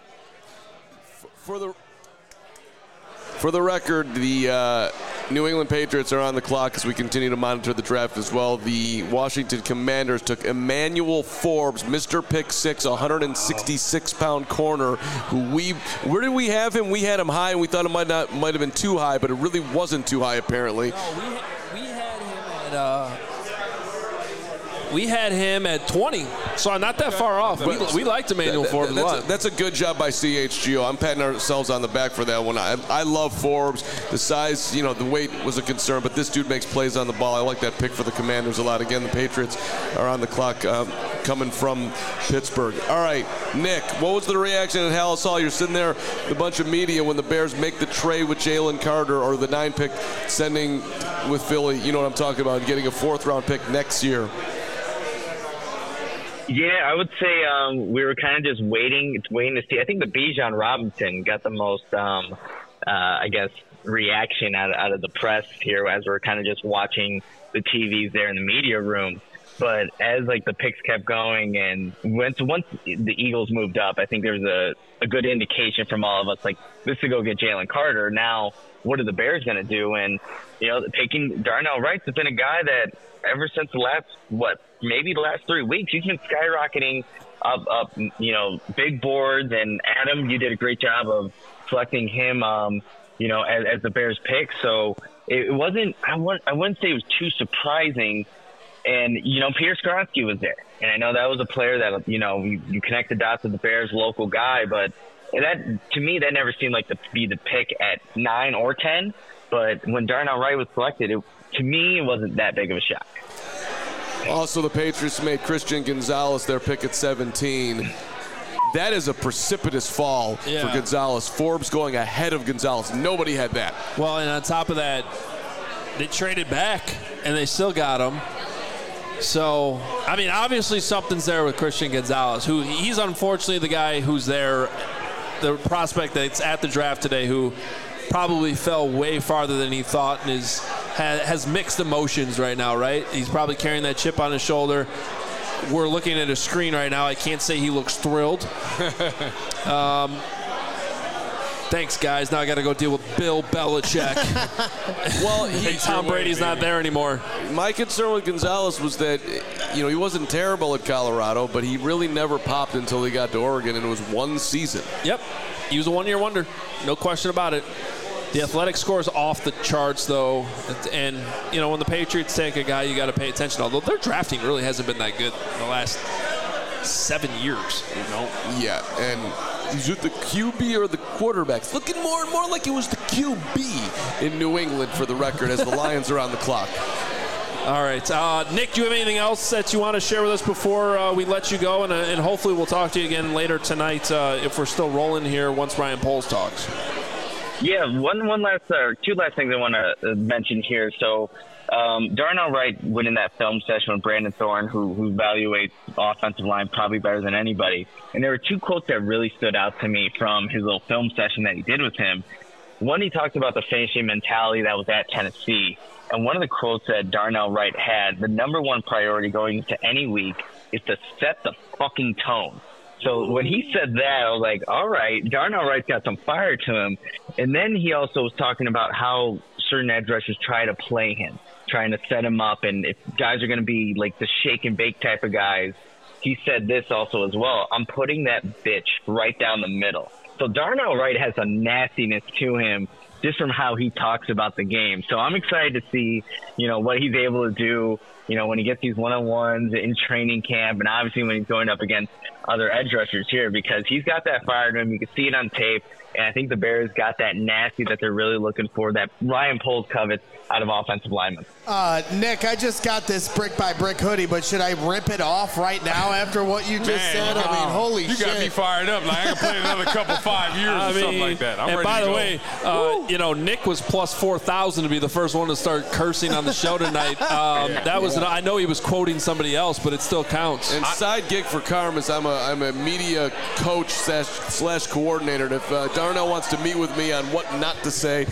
For the record, the New England Patriots are on the clock as we continue to monitor the draft as well. The Washington Commanders took Emmanuel Forbes, Mr. Pick Six, 166-pound corner. Where did we have him? We had him high, and we thought it might have been too high, but it really wasn't too high apparently. No, we had him at. We had him at 20, so not that far off. We liked Emmanuel Forbes a lot. That's a good job by CHGO. I'm patting ourselves on the back for that one. I love Forbes. The size, the weight was a concern, but this dude makes plays on the ball. I like that pick for the Commanders a lot. Again, the Patriots are on the clock coming from Pittsburgh. All right, Nick, what was the reaction at Halas Hall? You're sitting there with a bunch of media when the Bears make the trade with Jalen Carter, or the 9 pick sending with Philly. You know what I'm talking about, getting a 4th-round pick next year. Yeah, I would say we were kind of just waiting to see. I think the Bijan Robinson got the most, I guess, reaction out of the press here as we're kind of just watching the TVs there in the media room. But as the picks kept going and once the Eagles moved up, I think there was a good indication from all of us, this to go get Jalen Carter. Now, what are the Bears going to do? And, picking Darnell Wright has been a guy that ever since the last 3 weeks, he's been skyrocketing up, big boards. And Adam, you did a great job of selecting him, as the Bears pick. So it wasn't, I wouldn't say it was too surprising. And, Peter Skoronski was there. And I know that was a player that, you connect the dots with the Bears local guy. But that, to me, that never seemed to be the pick at 9 or 10. But when Darnell Wright was selected, to me, it wasn't that big of a shock. Also, the Patriots made Christian Gonzalez their pick at 17. That is a precipitous fall for Gonzalez. Forbes going ahead of Gonzalez. Nobody had that. Well, and on top of that, they traded back, and they still got him. So, obviously something's there with Christian Gonzalez, who he's unfortunately the guy who's there, the prospect that's at the draft today, who probably fell way farther than he thought and has mixed emotions right now, right? He's probably carrying that chip on his shoulder. We're looking at a screen right now. I can't say he looks thrilled. Thanks, guys. Now I got to go deal with Bill Belichick. Well, Tom Brady's not there anymore. My concern with Gonzalez was that, he wasn't terrible at Colorado, but he really never popped until he got to Oregon, and it was one season. Yep. He was a one-year wonder. No question about it. The athletic score is off the charts, though. And, when the Patriots take a guy, you got to pay attention. Although their drafting really hasn't been that good in the last 7 years. Yeah, and is it the QB or the quarterbacks? Looking more and more like it was the QB in New England, for the record, as the Lions are on the clock. All right. Nick, do you have anything else that you want to share with us before we let you go? And hopefully we'll talk to you again later tonight if we're still rolling here once Ryan Poles talks. Yeah, two last things I want to mention here. So Darnell Wright went in that film session with Brandon Thorne, who evaluates offensive line probably better than anybody. And there were two quotes that really stood out to me from his little film session that he did with him. One, he talked about the finishing mentality that was at Tennessee. And one of the quotes that Darnell Wright had, the number one priority going into any week is to set the fucking tone. So when he said that, I was like, all right, Darnell Wright's got some fire to him. And then he also was talking about how certain edge rushers try to play him, trying to set him up. And if guys are going to be the shake and bake type of guys, he said this also as well. I'm putting that bitch right down the middle. So Darnell Wright has a nastiness to him just from how he talks about the game. So I'm excited to see, what he's able to do, when he gets these one-on-ones in training camp, and obviously when he's going up against other edge rushers here, because he's got that fire to him. You can see it on tape. And I think the Bears got that nasty that they're really looking for, that Ryan Poles covets out of offensive linemen. Nick, I just got this brick-by-brick hoodie, but should I rip it off right now after what you just said? I mean, holy shit. You got me fired up. I can play another couple 5 years or something like that. I'm ready to go. And by the way, Nick was plus 4,000 to be the first one to start cursing on the show tonight. I know he was quoting somebody else, but it still counts. And side gig for Carmus, I'm a media coach slash coordinator. And if Darnell wants to meet with me on what not to say,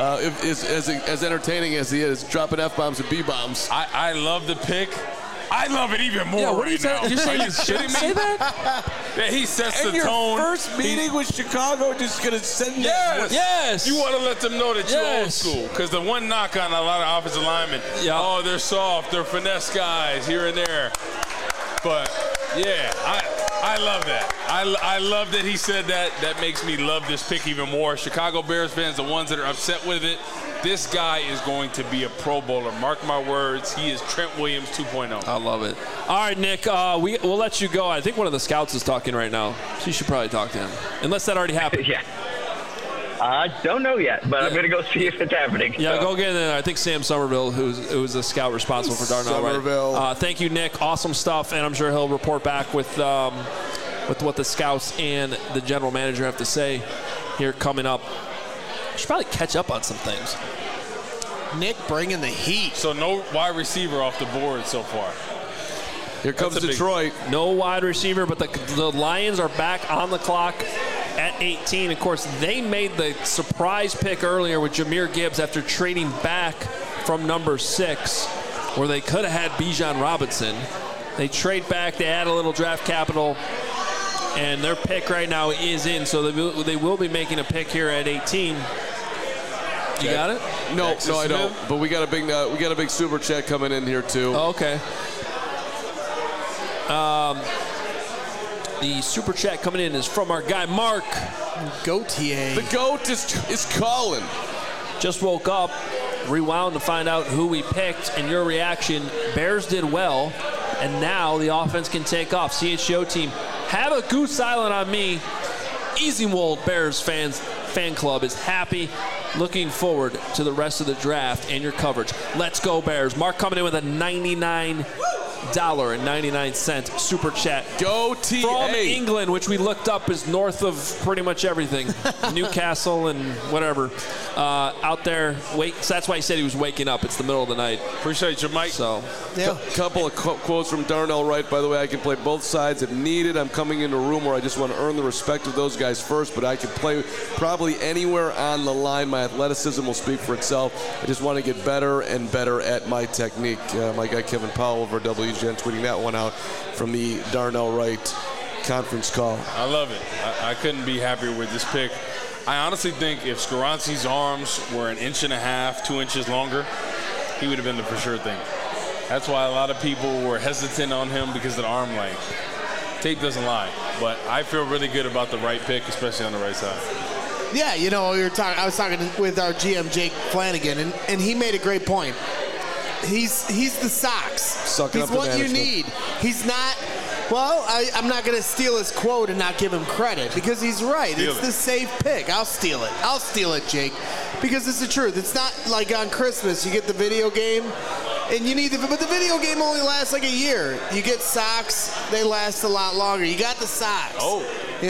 as entertaining as he is, dropping F-bombs and B-bombs. I love the pick. I love it even more what right now. You're saying you shouldn't say that? Yeah, he sets and the tone. Your first meeting with Chicago just going to send Yes. You want to let them know that you're old school. Because the one knock on a lot of offensive linemen, they're soft, they're finesse guys here and there. But, yeah, I love that. I love that he said that. That makes me love this pick even more. Chicago Bears fans, the ones that are upset with it, this guy is going to be a Pro Bowler. Mark my words. He is Trent Williams 2.0. I love it. All right, Nick, we'll let you go. I think one of the scouts is talking right now, so you should probably talk to him, unless that already happened. Yeah. I don't know yet, but I'm going to go see if it's happening. Yeah, go get in there. I think Sam Somerville, who's a scout responsible for Darnell Wright. Thank you, Nick. Awesome stuff, and I'm sure he'll report back with what the scouts and the general manager have to say here coming up. Should probably catch up on some things. Nick bringing the heat. So no wide receiver off the board so far. Here comes Detroit. No wide receiver, but the Lions are back on the clock at 18. Of course, they made the surprise pick earlier with Jahmyr Gibbs after trading back from number 6, where they could have had Bijan Robinson. They trade back, they add a little draft capital, and their pick right now is in, so they will be making a pick here at 18. You got it? No, I don't. But we got a big super chat coming in here too. Oh, okay. The super chat coming in is from our guy Mark Gautier. The GOAT is calling. Just woke up, rewound to find out who we picked, and your reaction. Bears did well, and now the offense can take off. CHGO team, have a goose island on me. Easywold Bears fan club is happy. Looking forward to the rest of the draft and your coverage. Let's go Bears. Mark coming in with a $99.99 super chat. Go TA. From England, which we looked up is north of pretty much everything. Newcastle and whatever. Out there. So that's why he said he was waking up. It's the middle of the night. Appreciate you, Mike. So, couple of quotes from Darnell Wright. By the way, I can play both sides if needed. I'm coming into a room where I just want to earn the respect of those guys first, but I can play probably anywhere on the line. My athleticism will speak for itself. I just want to get better and better at my technique. My guy Kevin Powell over WGN tweeting that one out from the Darnell Wright conference call. I love it. I couldn't be happier with this pick. I honestly think if Skoronski's arms were 1.5 inches, 2 inches longer, he would have been the for sure thing. That's why a lot of people were hesitant on him because of the arm length. Tape doesn't lie, but I feel really good about the right pick, especially on the right side. Yeah, I was talking with our GM Jake Flanagan, and he made a great point. He's the socks. He's what you need. He's not. Well, I'm not going to steal his quote and not give him credit because he's right. It's the safe pick. I'll steal it, Jake, because it's the truth. It's not like on Christmas you get the video game and you need but the video game only lasts like a year. You get socks, they last a lot longer. You got the socks. Oh.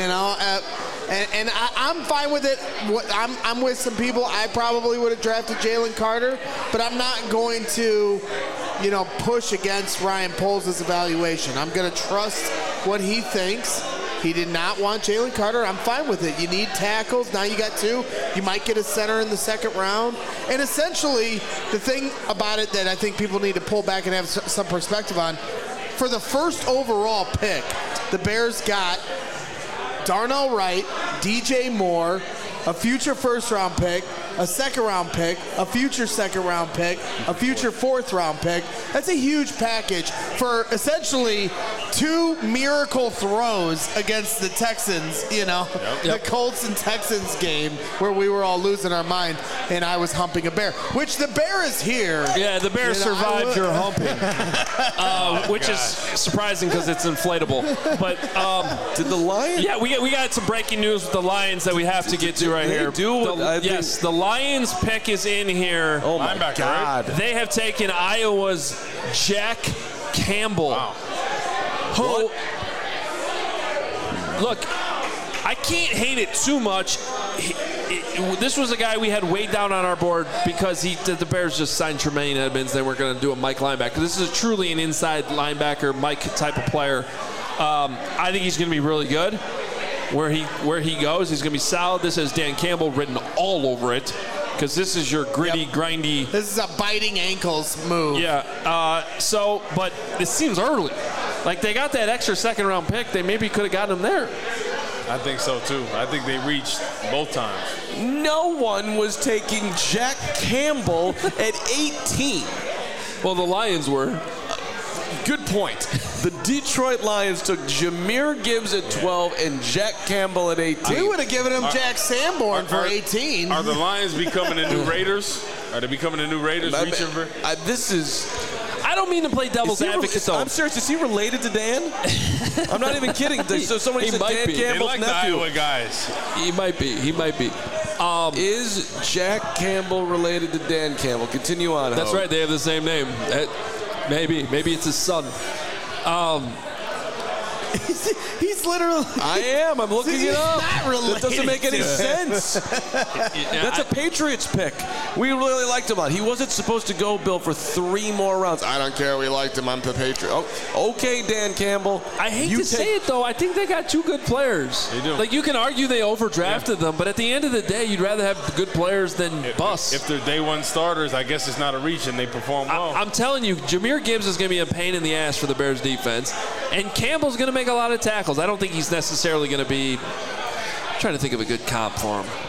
And I'm fine with it. I'm with some people. I probably would have drafted Jalen Carter, but I'm not going to, push against Ryan Poles' evaluation. I'm going to trust what he thinks. He did not want Jalen Carter. I'm fine with it. You need tackles. Now you got 2. You might get a center in the second round. And essentially, the thing about it that I think people need to pull back and have some perspective on, for the first overall pick, the Bears got Darnell Wright, DJ Moore, a future first-round pick, a second-round pick, a future second-round pick, a future fourth-round pick. That's a huge package for essentially 2 miracle throws against the Texans, the Colts and Texans game where we were all losing our mind and I was humping a bear, which the bear is here. Yeah, the bear survived your humping, which is surprising because it's inflatable. But did the Lions? Yeah, we got some breaking news with the Lions that we have to get to right here. Yes, the Lions pick is in here. Oh my God! They have taken Iowa's Jack Campbell. Wow. Who? Look, I can't hate it too much. This was a guy we had way down on our board because the Bears just signed Tremaine Edmonds. They weren't going to do a Mike linebacker. This is truly an inside linebacker, Mike type of player. I think he's going to be really good. Where he goes, he's going to be solid. This has Dan Campbell written all over it because this is your gritty, grindy. This is a biting ankles move. Yeah. But it seems early. Like they got that extra second-round pick. They maybe could have gotten him there. I think so, too. I think they reached both times. No one was taking Jack Campbell at 18. Well, the Lions were. Good point. The Detroit Lions took Jahmyr Gibbs at 12 and Jack Campbell at 18. We would have given him Jack Sanborn for 18. Are the Lions becoming the new Raiders? Are they becoming the new Raiders? I don't mean to play devil's advocate, though. I'm serious. Is he related to Dan? I'm not even kidding. So somebody said Dan Campbell's they like nephew. The Iowa guys. He might be. Is Jack Campbell related to Dan Campbell? Continue on. That's right. They have the same name. Maybe it's his son. He's literally. I am. I'm looking it up. That doesn't make any sense. That's a Patriots pick. We really liked him a lot. He wasn't supposed to go, Bill, for 3 more rounds. I don't care. We liked him. I'm the Patriot. Oh, okay, Dan Campbell. I hate to say it, though. I think they got 2 good players. They do. Like, you can argue they overdrafted them, but at the end of the day, you'd rather have good players than bust. If they're day one starters, I guess it's not a reach, and they perform well. I'm telling you, Jahmyr Gibbs is going to be a pain in the ass for the Bears defense, and Campbell's going to make a lot of tackles. I don't think he's necessarily going to be. I'm trying to think of a good comp for him.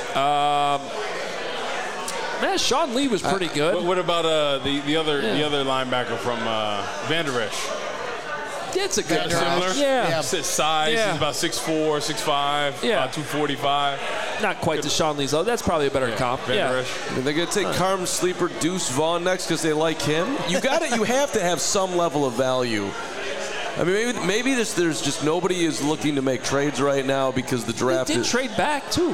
Man, Sean Lee was pretty good. What about the other linebacker from Van Der Esch? Yeah, it's a good similar. Yeah. Size, he's about 6'4", 6'5", about 245. Not quite to Sean Lee's. That's probably a better comp. Van Der Esch. And they're going to take Carm Sleeper Deuce Vaughn next because they like him. You got it. You have to have some level of value. I mean, maybe there's just nobody is looking to make trades right now because the draft did trade back too.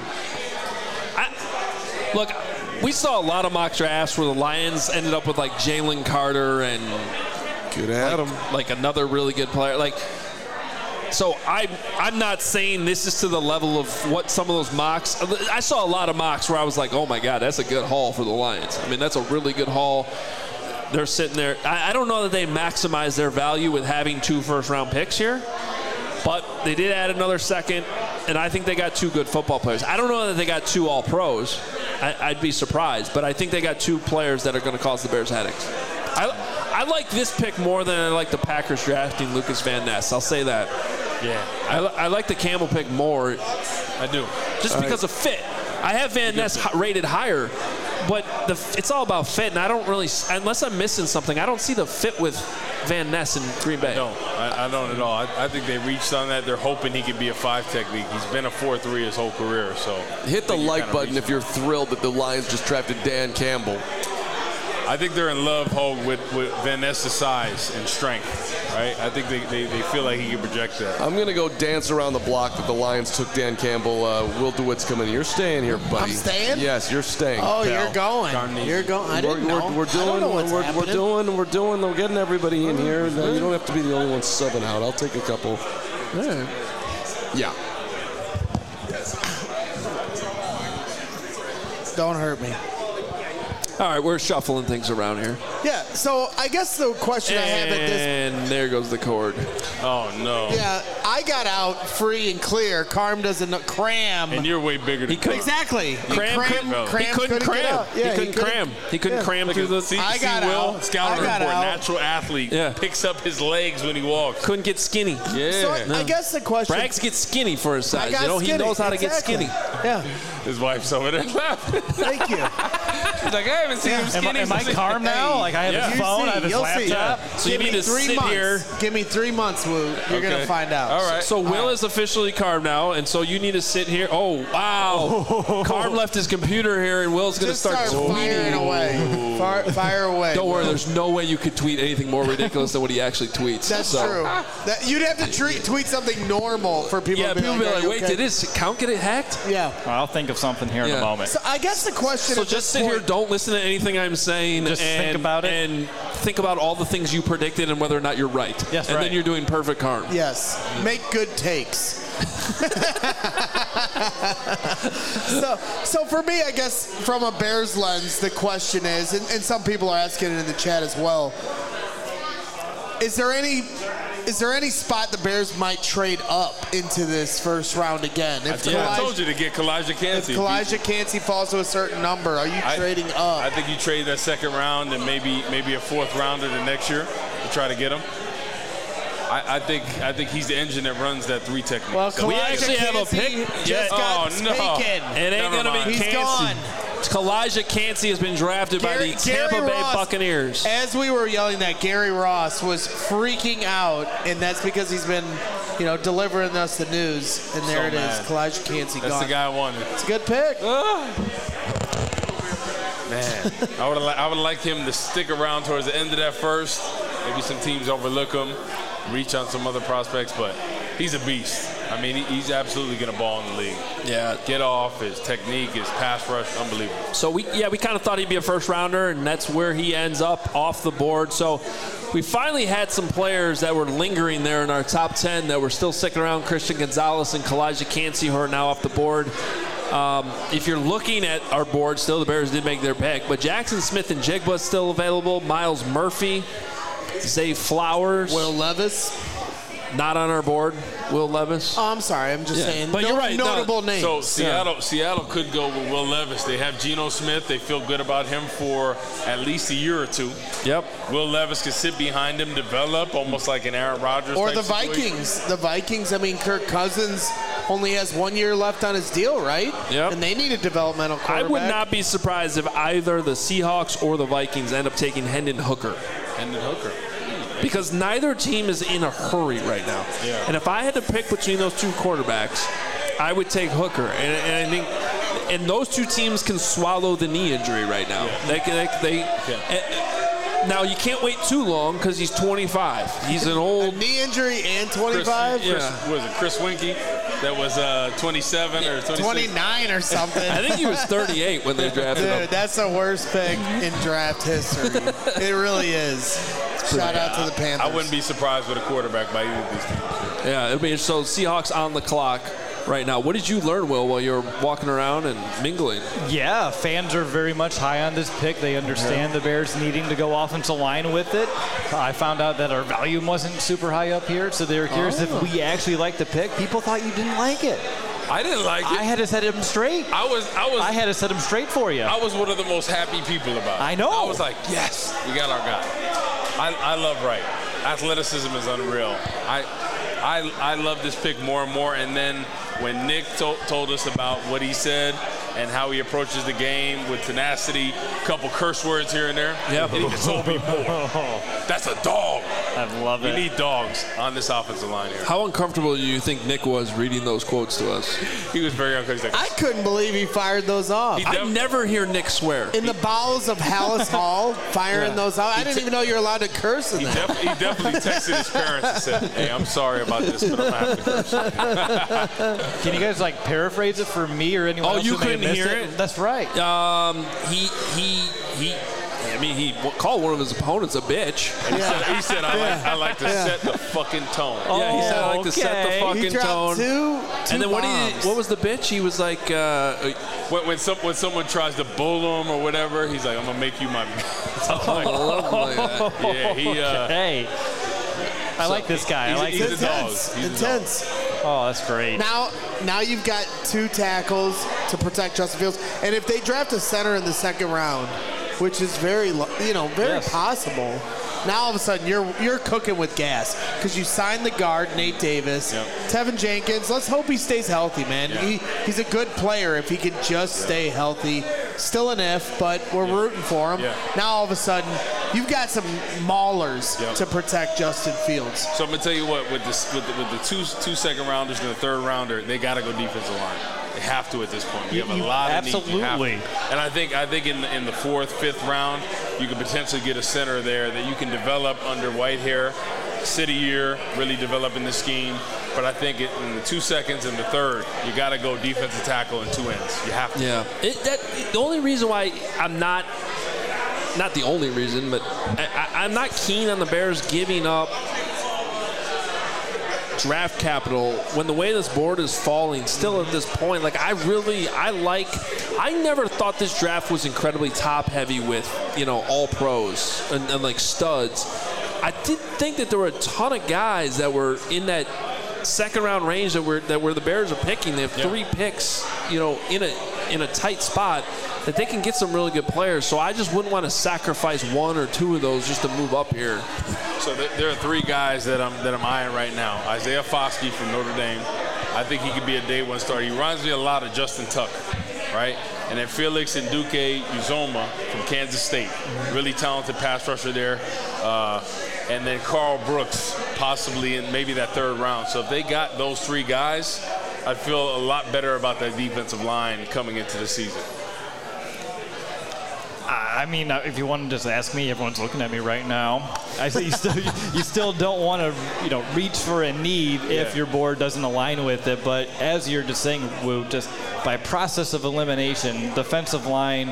Look, we saw a lot of mock drafts where the Lions ended up with like Jalen Carter and good Adam, like another really good player. Like, so I'm not saying this is to the level of what some of those mocks. I saw a lot of mocks where I was like, oh my God, that's a good haul for the Lions. I mean, that's a really good haul. They're sitting there. I don't know that they maximize their value with having 2 first-round picks here, but they did add another second, and I think they got 2 good football players. I don't know that they got 2 all-pros. I'd be surprised, but I think they got 2 players that are going to cause the Bears headaches. I like this pick more than I like the Packers drafting Lucas Van Ness. I'll say that. Yeah. I like the Campbell pick more. I do. Just because of fit. I have Van Ness rated higher. But it's all about fit, and I don't really, unless I'm missing something, I don't see the fit with Van Ness in Green Bay. No, I don't at all. I think they reached on that. They're hoping he could be a 5 technique. He's been a 4-3 his whole career. So hit the like button if you're thrilled that the Lions just drafted Dan Campbell. I think they're in love, Hogue, with Van Ness's size and strength, right? I think they feel like he can project that. I'm going to go dance around the block that the Lions took Dan Campbell. Will DeWitt's coming in. You're staying here, buddy. I'm staying? Yes, you're staying. Oh, pal. you're going. You're going. I didn't know. We're getting everybody in here. You don't have to be the only one subbing out. I'll take a couple. Yeah. Don't hurt me. All right, we're shuffling things around here. Yeah, so I guess the question I have at this... And there goes the cord. Oh, no. Yeah, I got out free and clear. Carm doesn't know. Cram. And you're way bigger than Cram. Exactly. He couldn't cram. He couldn't cram through the... I got out. Scouting report, natural athlete. Yeah. Picks up his legs when he walks. Couldn't get skinny. Yeah. So I guess the question... Braggs gets skinny for his size. He knows how to get skinny. Yeah. His wife's over there laughing. Thank you. She's like, I haven't seen him skinny. Am I Carm now? Like, I have his phone, I have his laptop. So you need to sit here. Give me 3 months, Woo. You're going to find out. All right. So Will is officially Carm now, and so you need to sit here. Oh, wow. Carm left his computer here, and Will's going to start firing away. Fire away. Don't worry, there's no way you could tweet anything more ridiculous than what he actually tweets. That's true. You'd have to tweet something normal for people to be people like, be like, wait, did his account get hacked? Yeah. I'll think of something here in a moment. So I guess the question So just sit here, don't listen to anything I'm saying. Just think about it. And think about all the things you predicted and whether or not you're right. Yes, and right. then you're doing perfect Carm. Yes. Make good takes. So for me, I guess from a Bears lens, the question is, and some people are asking it in the chat as well, is there any spot the Bears might trade up into this first round again? I told you to get Kalijah Kancey. If Kalijah Kancey falls to a certain number, are you trading up? I think you trade that second round and maybe a 4th rounder the next year to try to get him. I think he's the engine that runs that 3 technique. Well, we actually have a pick. Just got taken. It ain't going to be He's Kancey. gone. Kalijah Kancey has been drafted by the Tampa Bay Buccaneers. As we were yelling that, Gary Ross was freaking out, and that's because he's been, delivering us the news. And there it is, Kalijah Kancey gone. That's the guy I wanted. It's a good pick. Man, I would like him to stick around towards the end of that first. Maybe some teams overlook him, reach on some other prospects, but he's a beast. I mean, he's absolutely going to ball in the league. Yeah. Get off, his technique, his pass rush, unbelievable. So we kind of thought he'd be a first rounder, and that's where he ends up off the board. So we finally had some players that were lingering there in our top 10 that were still sticking around. Christian Gonzalez and Kalijah Cansey, who are now off the board. If you're looking at our board, still the Bears did make their pick, but Jackson Smith and Jigba is still available. Miles Murphy, Zay Flowers. Will Levis. Not on our board, Will Levis. Oh, I'm sorry. I'm just saying. But you're right. Notable names. So Seattle could go with Will Levis. They have Geno Smith. They feel good about him for at least a year or two. Yep. Will Levis could sit behind him, develop almost like an Aaron Rodgers. Or type the situation. Vikings. The Vikings, I mean, Kirk Cousins only has 1 year left on his deal, right? Yep. And they need a developmental quarterback. I would not be surprised if either the Seahawks or the Vikings end up taking Hendon Hooker. Because neither team is in a hurry right now. Yeah. And if I had to pick between those two quarterbacks, I would take Hooker. And I think and those two teams can swallow the knee injury right now. Now, you can't wait too long because he's 25. He's an old... A knee injury and 25? Chris Winkie? That was 27 or 26? 29 or something. I think he was 38 when they drafted him. Dude, that's the worst pick in draft history. It really is. Shout out to the Panthers. I wouldn't be surprised with a quarterback by either of these teams. Yeah, it'll be so Seahawks on the clock right now. What did you learn, Will, while you were walking around and mingling? Yeah, fans are very much high on this pick. They understand the Bears needing to go offensive line with it. I found out that our volume wasn't super high up here, so they were curious if we actually liked the pick. People thought you didn't like it. I didn't like it. I had to set him straight. I had to set him straight for you. I was one of the most happy people about it. I know. I was like, yes, we got our guy. I love Wright. Athleticism is unreal. I love this pick more and more. And then when Nick told us about what he said and how he approaches the game with tenacity, a couple curse words here and there, yep. He just told me more. That's a dog. I love it. We need dogs on this offensive line here. How uncomfortable do you think Nick was reading those quotes to us? He was very uncomfortable. I couldn't believe he fired those off. I never hear Nick swear. In the bowels of Hallis Hall, firing those off. I didn't even know you're allowed to curse in that. He definitely texted his parents and said, hey, I'm sorry about this, but I'm going to have to curse. Can you guys paraphrase it for me or anyone else? Oh, you couldn't hear it? That's right. He called one of his opponents a bitch. He said I like to set the fucking tone. Yeah, he said I like to set the fucking tone. Two and then what was the bitch? He was like, when someone tries to bull him or whatever, he's like, I'm gonna make you my. Hey, I like this guy. He's intense. Intense. Oh, that's great. Now you've got two tackles to protect Justin Fields, and if they draft a center in the second round, which is very possible. Now all of a sudden you're cooking with gas because you signed the guard Nate Davis, Tevin Jenkins. Let's hope he stays healthy, man. Yeah. He's a good player if he could just stay healthy. Still an if, but we're rooting for him. Yeah. Now all of a sudden you've got some maulers to protect Justin Fields. So I'm gonna tell you what, with the two second rounders and the third rounder, they got to go defensive line. They have to at this point. We have a lot of needs. Absolutely. And I think in the fourth, fifth round, you could potentially get a center there that you can develop under Whitehair, sit a year, really develop in the scheme. But I think in the 2 seconds and the third, you got to go defensive tackle and two ends. You have to. Yeah. The only reason why I'm not the only reason, but I'm not keen on the Bears giving up draft capital when the way this board is falling still at this point. I never thought this draft was incredibly top heavy with all pros and studs. I did think that there were a ton of guys that were in that second round range that were the Bears are picking. They have 3 picks in a tight spot that they can get some really good players. So I just wouldn't want to sacrifice 1 or 2 of those just to move up here. So there are 3 guys that I'm eyeing right now. Isaiah Foskey from Notre Dame. I think he could be a day 1 starter. He reminds me a lot of Justin Tuck, right? And then Felix and Duque Uzoma from Kansas State. Really talented pass rusher there. And then Carl Brooks, possibly in maybe that third round. So if they got those 3 guys, I'd feel a lot better about that defensive line coming into the season. I mean, if you want to just ask me, everyone's looking at me right now. I say you still don't want to, reach for a need if your board doesn't align with it. But as you're just saying, Woo, just by process of elimination, defensive line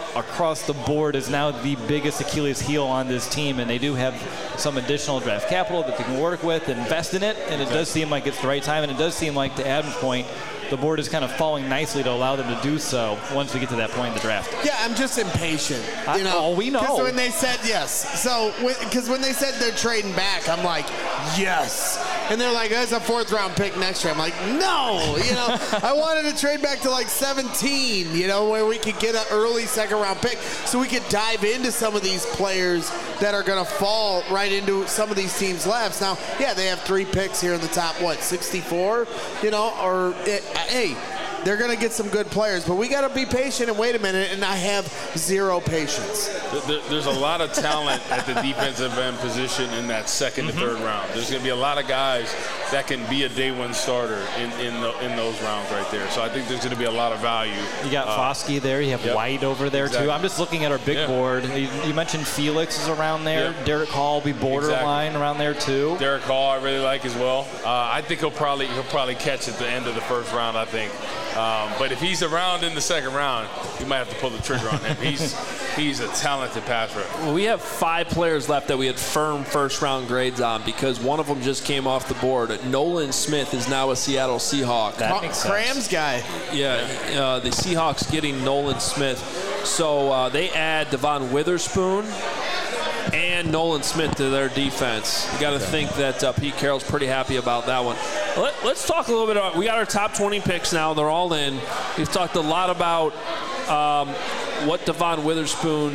across the board is now the biggest Achilles heel on this team, and they do have some additional draft capital that they can work with and invest in it, and it does seem like it's the right time, and it does seem like, to Adam's point, the board is kind of falling nicely to allow them to do so once we get to that point in the draft. Yeah, I'm just impatient. We know. Because when they said yes. So, because when they said they're trading back, I'm like, yes. And they're like, there's a 4th-round pick next year. I'm like, no. I wanted to trade back to like 17, where we could get an early 2nd-round pick so we could dive into some of these players that are going to fall right into some of these teams' laps. Now, yeah, they have 3 picks here in the top, 64? Hey, they're going to get some good players, but we got to be patient and wait a minute, and I have 0 patience. There's a lot of talent at the defensive end position in that 2nd to 3rd round. There's going to be a lot of guys that can be a day 1 starter in those rounds right there. So I think there's going to be a lot of value. You got Foskey there. You have White over there, too. I'm just looking at our big board. You mentioned Felix is around there. Yep. Derek Hall will be borderline around there, too. Derek Hall I really like as well. I think he'll probably catch at the end of the 1st round, I think. But if he's around in the 2nd round, you might have to pull the trigger on him. He's a talented pass rusher. Well, we have 5 players left that we had firm 1st-round grades on because one of them just came off the board. Nolan Smith is now a Seattle Seahawk. That makes sense. Rams guy. Yeah, the Seahawks getting Nolan Smith. So they add Devon Witherspoon and Nolan Smith to their defense. You got to think that Pete Carroll's pretty happy about that one. Let's talk a little bit about, we got our top 20 picks now. They're all in. We've talked a lot about what Devon Witherspoon,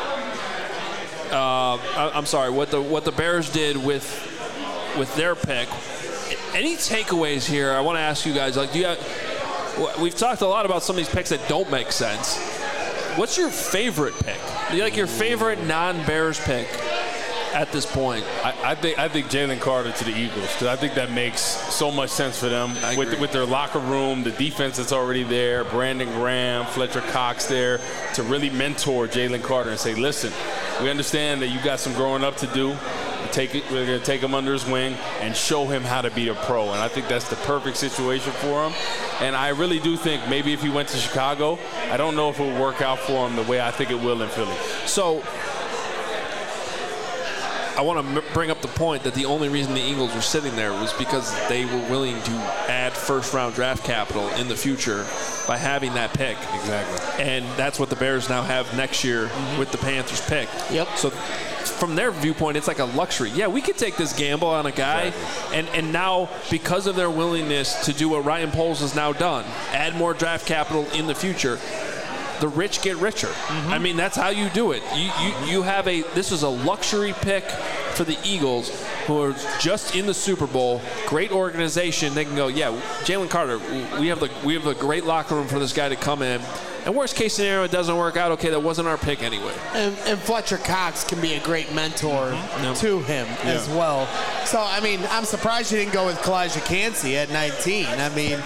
what the Bears did with their pick. Any takeaways here? I want to ask you guys, we've talked a lot about some of these picks that don't make sense. What's your favorite pick? Your favorite non-Bears pick at this point? I think Jalen Carter to the Eagles, because I think that makes so much sense for them with their locker room, the defense that's already there, Brandon Graham, Fletcher Cox there, to really mentor Jalen Carter and say, listen, we understand that you got some growing up to do. We're going to take him under his wing and show him how to be a pro. And I think that's the perfect situation for him. And I really do think maybe if he went to Chicago, I don't know if it would work out for him the way I think it will in Philly. So I want to bring up the point that the only reason the Eagles were sitting there was because they were willing to add 1st-round draft capital in the future by having that pick. Exactly. And that's what the Bears now have next year with the Panthers pick. Yep. So from their viewpoint, it's like a luxury. Yeah, we could take this gamble on a guy, and now because of their willingness to do what Ryan Poles has now done, add more draft capital in the future, the rich get richer. I mean, that's how you do it. You have this is a luxury pick for the Eagles, who are just in the Super Bowl. Great organization. They can go, Jalen Carter, we have a great locker room for this guy to come in. And worst case scenario, it doesn't work out. Okay, that wasn't our pick anyway. And Fletcher Cox can be a great mentor to him as well. So, I mean, I'm surprised you didn't go with Kalijah Kancey at 19. I mean,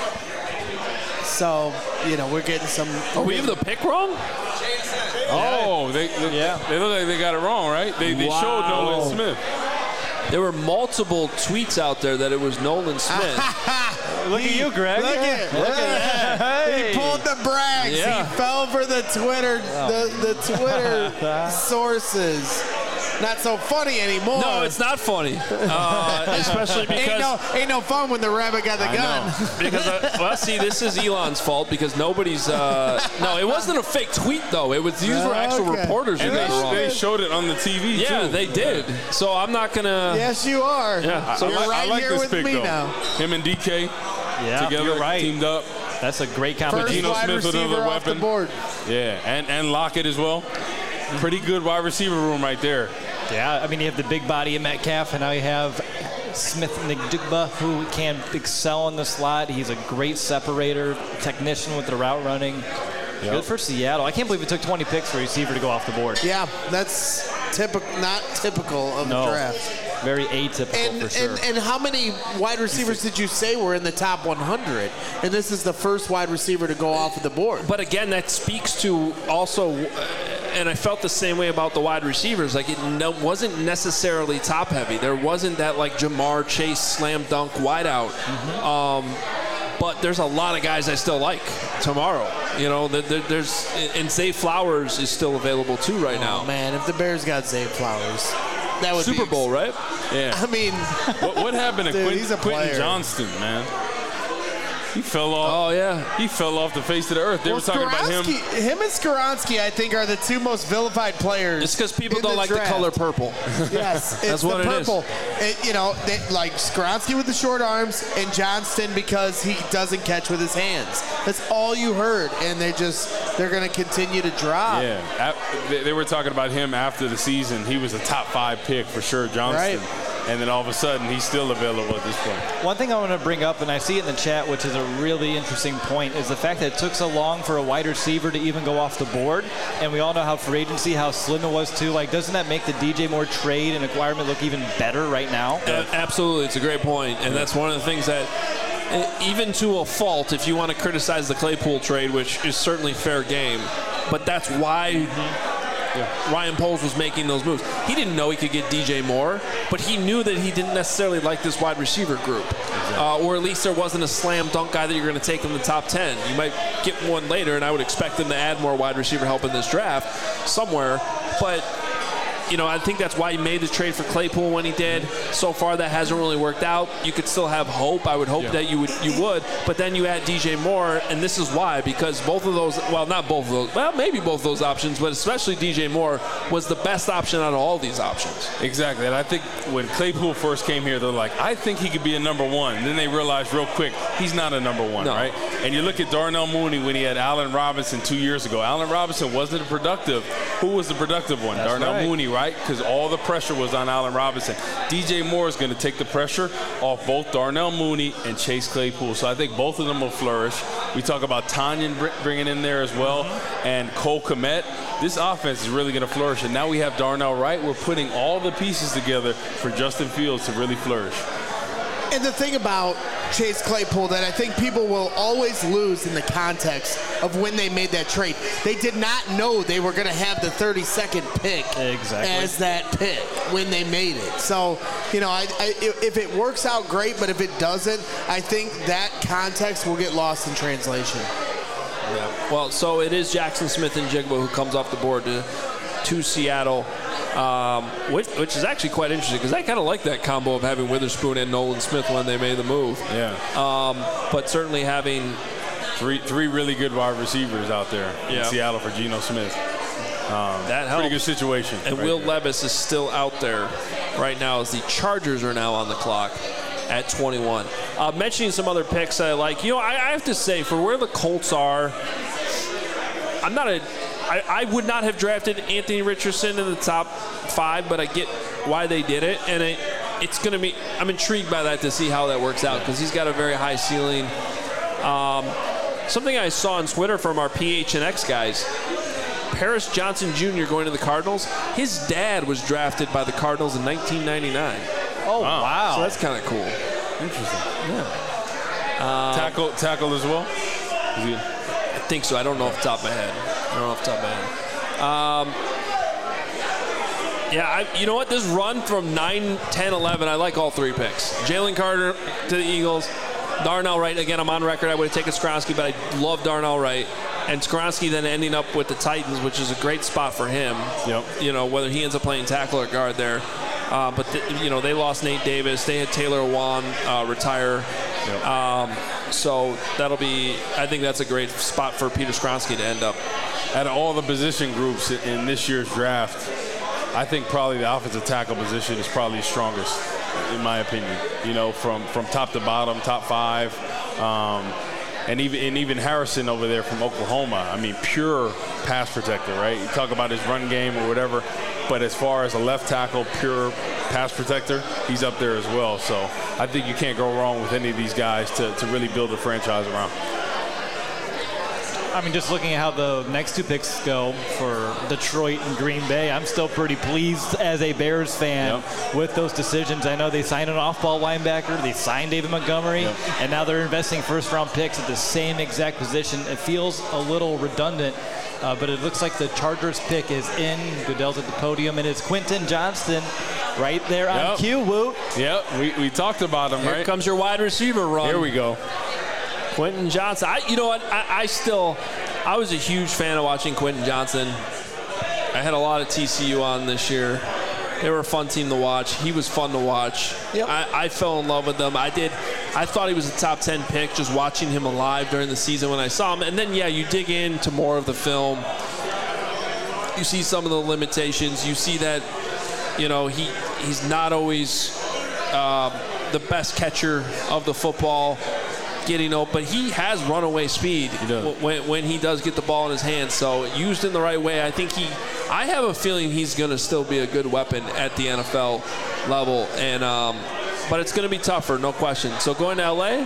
so, we're getting some. Oh, we have the pick wrong? Oh, they look like they got it wrong, right? They showed Nolan Smith. There were multiple tweets out there that it was Nolan Smith. Look at you, Greg. Look at that. Hey. He pulled the brags. Yeah. He fell for the Twitter, the Twitter sources. Not so funny anymore. No, it's not funny. Especially because ain't no fun when the rabbit got the gun. Because this is Elon's fault because nobody's. No, it wasn't a fake tweet though. These were actual reporters who got it wrong. They showed it on the TV too. Yeah, they did. So I'm not gonna. Yes, you are. Yeah. So you're right I like here this with pick me though. now. Him and DK together, you're right. teamed up. That's a great First combination. Geno wide Smith with receiver another off the weapon. board. Yeah, and Lockett as well. Pretty good wide receiver room right there. Yeah, I mean, you have the big body of Metcalf, and now you have Smith Njigba, who can excel in the slot. He's a great separator, technician with the route running. Yep. Good for Seattle. I can't believe it took 20 picks for a receiver to go off the board. Yeah, that's not typical of the draft. Very atypical for sure. And how many wide receivers did you say were in the top 100? And this is the first wide receiver to go off of the board. But again, that speaks to also, and I felt the same way about the wide receivers. Like it wasn't necessarily top heavy. There wasn't that like Jamar Chase slam dunk wideout. But there's a lot of guys I still like. tomorrow. You know, there's and Zay Flowers is still available too right now. Man, if the Bears got Zay Flowers, that would Super be Bowl, right? Yeah. I mean, what happened to he's a Quentin player. Johnston, man? He fell off. Oh, yeah. He fell off the face of the earth. They were talking about him. Him and Skoronski, I think, are the two most vilified players. It's because people in don't the like draft. the color purple. Yes, it's That's what the it is. purple. You know, like Skoronski with the short arms and Johnston because he doesn't catch with his hands. That's all you heard, and they're going to continue to drop. Yeah, they were talking about him after the season. He was a top 5 pick for sure, Johnston. Right. And then all of a sudden, he's still available at this point. One thing I want to bring up, and I see it in the chat, which is a really interesting point, is the fact that it took so long for a wide receiver to even go off the board. And we all know how free agency, how slim it was too. Like, doesn't that make the DJ Moore trade and acquirement look even better right now? Absolutely. It's a great point. And that's one of the things that, even to a fault, if you want to criticize the Claypool trade, which is certainly fair game, but that's why Ryan Poles was making those moves. He didn't know he could get DJ Moore, but he knew that he didn't necessarily like this wide receiver group. Or at least there wasn't a slam dunk guy that you're going to take in the top 10. You might get one later, and I would expect them to add more wide receiver help in this draft somewhere. But you know, I think that's why he made the trade for Claypool when he did. So far, that hasn't really worked out. You could still have hope. I would hope that you would. But then you add DJ Moore, and this is why, because both of those, well, not both of those, well, maybe both of those options, but especially DJ Moore was the best option out of all these options. Exactly. And I think when Claypool first came here, they're like, I think he could be a number 1. And then they realized real quick, he's not a number 1, right? And you look at Darnell Mooney when he had Allen Robinson 2 years ago. Allen Robinson wasn't a productive. Who was the productive one? That's Darnell right. Mooney, right? Because all the pressure was on Allen Robinson. DJ Moore is going to take the pressure off both Darnell Mooney and Chase Claypool. So I think both of them will flourish. We talk about Tanyan bringing in there as well, and Cole Kmet. This offense is really going to flourish. And now we have Darnell Wright. We're putting all the pieces together for Justin Fields to really flourish. And the thing about Chase Claypool that I think people will always lose in the context of when they made that trade, they did not know they were going to have the 32nd pick as that pick when they made it. So, you know, if it works out, great, but if it doesn't, I think that context will get lost in translation. Yeah. Well, so it is Jackson Smith and Jigba who comes off the board to Seattle. Which is actually quite interesting because I kind of like that combo of having Witherspoon and Nolan Smith when they made the move. Yeah. But certainly having three really good wide receivers out there in Seattle for Geno Smith. That helps. Pretty good situation. And Will Levis is still out there right now as the Chargers are now on the clock at 21. Mentioning some other picks I like. You know, I have to say, for where the Colts are, I would not have drafted Anthony Richardson in the top 5, but I get why they did it, and it's going to be. I'm intrigued by that to see how that works out because he's got a very high ceiling. Something I saw on Twitter from our PHNX guys, Paris Johnson Jr. going to the Cardinals. His dad was drafted by the Cardinals in 1999. Oh wow! So that's kind of cool. Interesting. Yeah. Tackle as well. I think so. I don't know off the top of my head. You know what? This run from 9, 10, 11, I like all 3 picks. Jalen Carter to the Eagles. Darnell Wright, again, I'm on record. I would have taken Skoronski, but I love Darnell Wright. And Skoronski then ending up with the Titans, which is a great spot for him. Yep. You know, whether he ends up playing tackle or guard there. But they lost Nate Davis. They had Taylor Wan retire. Yep. So I think that's a great spot for Peter Skoronski to end up. Out of all the position groups in this year's draft, I think probably the offensive tackle position is probably strongest, in my opinion. You know, from top to bottom, top 5. And even Harrison over there from Oklahoma. I mean, pure pass protector, right? You talk about his run game or whatever, but as far as a left tackle, pure pass protector, he's up there as well. So I think you can't go wrong with any of these guys to really build a franchise around. I mean, just looking at how the next 2 picks go for Detroit and Green Bay, I'm still pretty pleased as a Bears fan with those decisions. I know they signed an off-ball linebacker, they signed David Montgomery, and now they're investing first-round picks at the same exact position. It feels a little redundant, but it looks like the Chargers pick is in. Goodell's at the podium, and it's Quentin Johnston right there on cue. Woo. Yep, we talked about him, right? Here comes your wide receiver run. Here we go. Quentin Johnson. You know what? I was a huge fan of watching Quentin Johnson. I had a lot of TCU on this year. They were a fun team to watch. He was fun to watch. Yep. I fell in love with them. I did. I thought he was a top 10 pick just watching him alive during the season when I saw him. And then, you dig into more of the film. You see some of the limitations. You see that, he's not always the best catcher of the football, getting open, but he has runaway speed when he does get the ball in his hands. So used in the right way, I have a feeling he's going to still be a good weapon at the NFL level, and but it's going to be tougher, no question. So going to LA,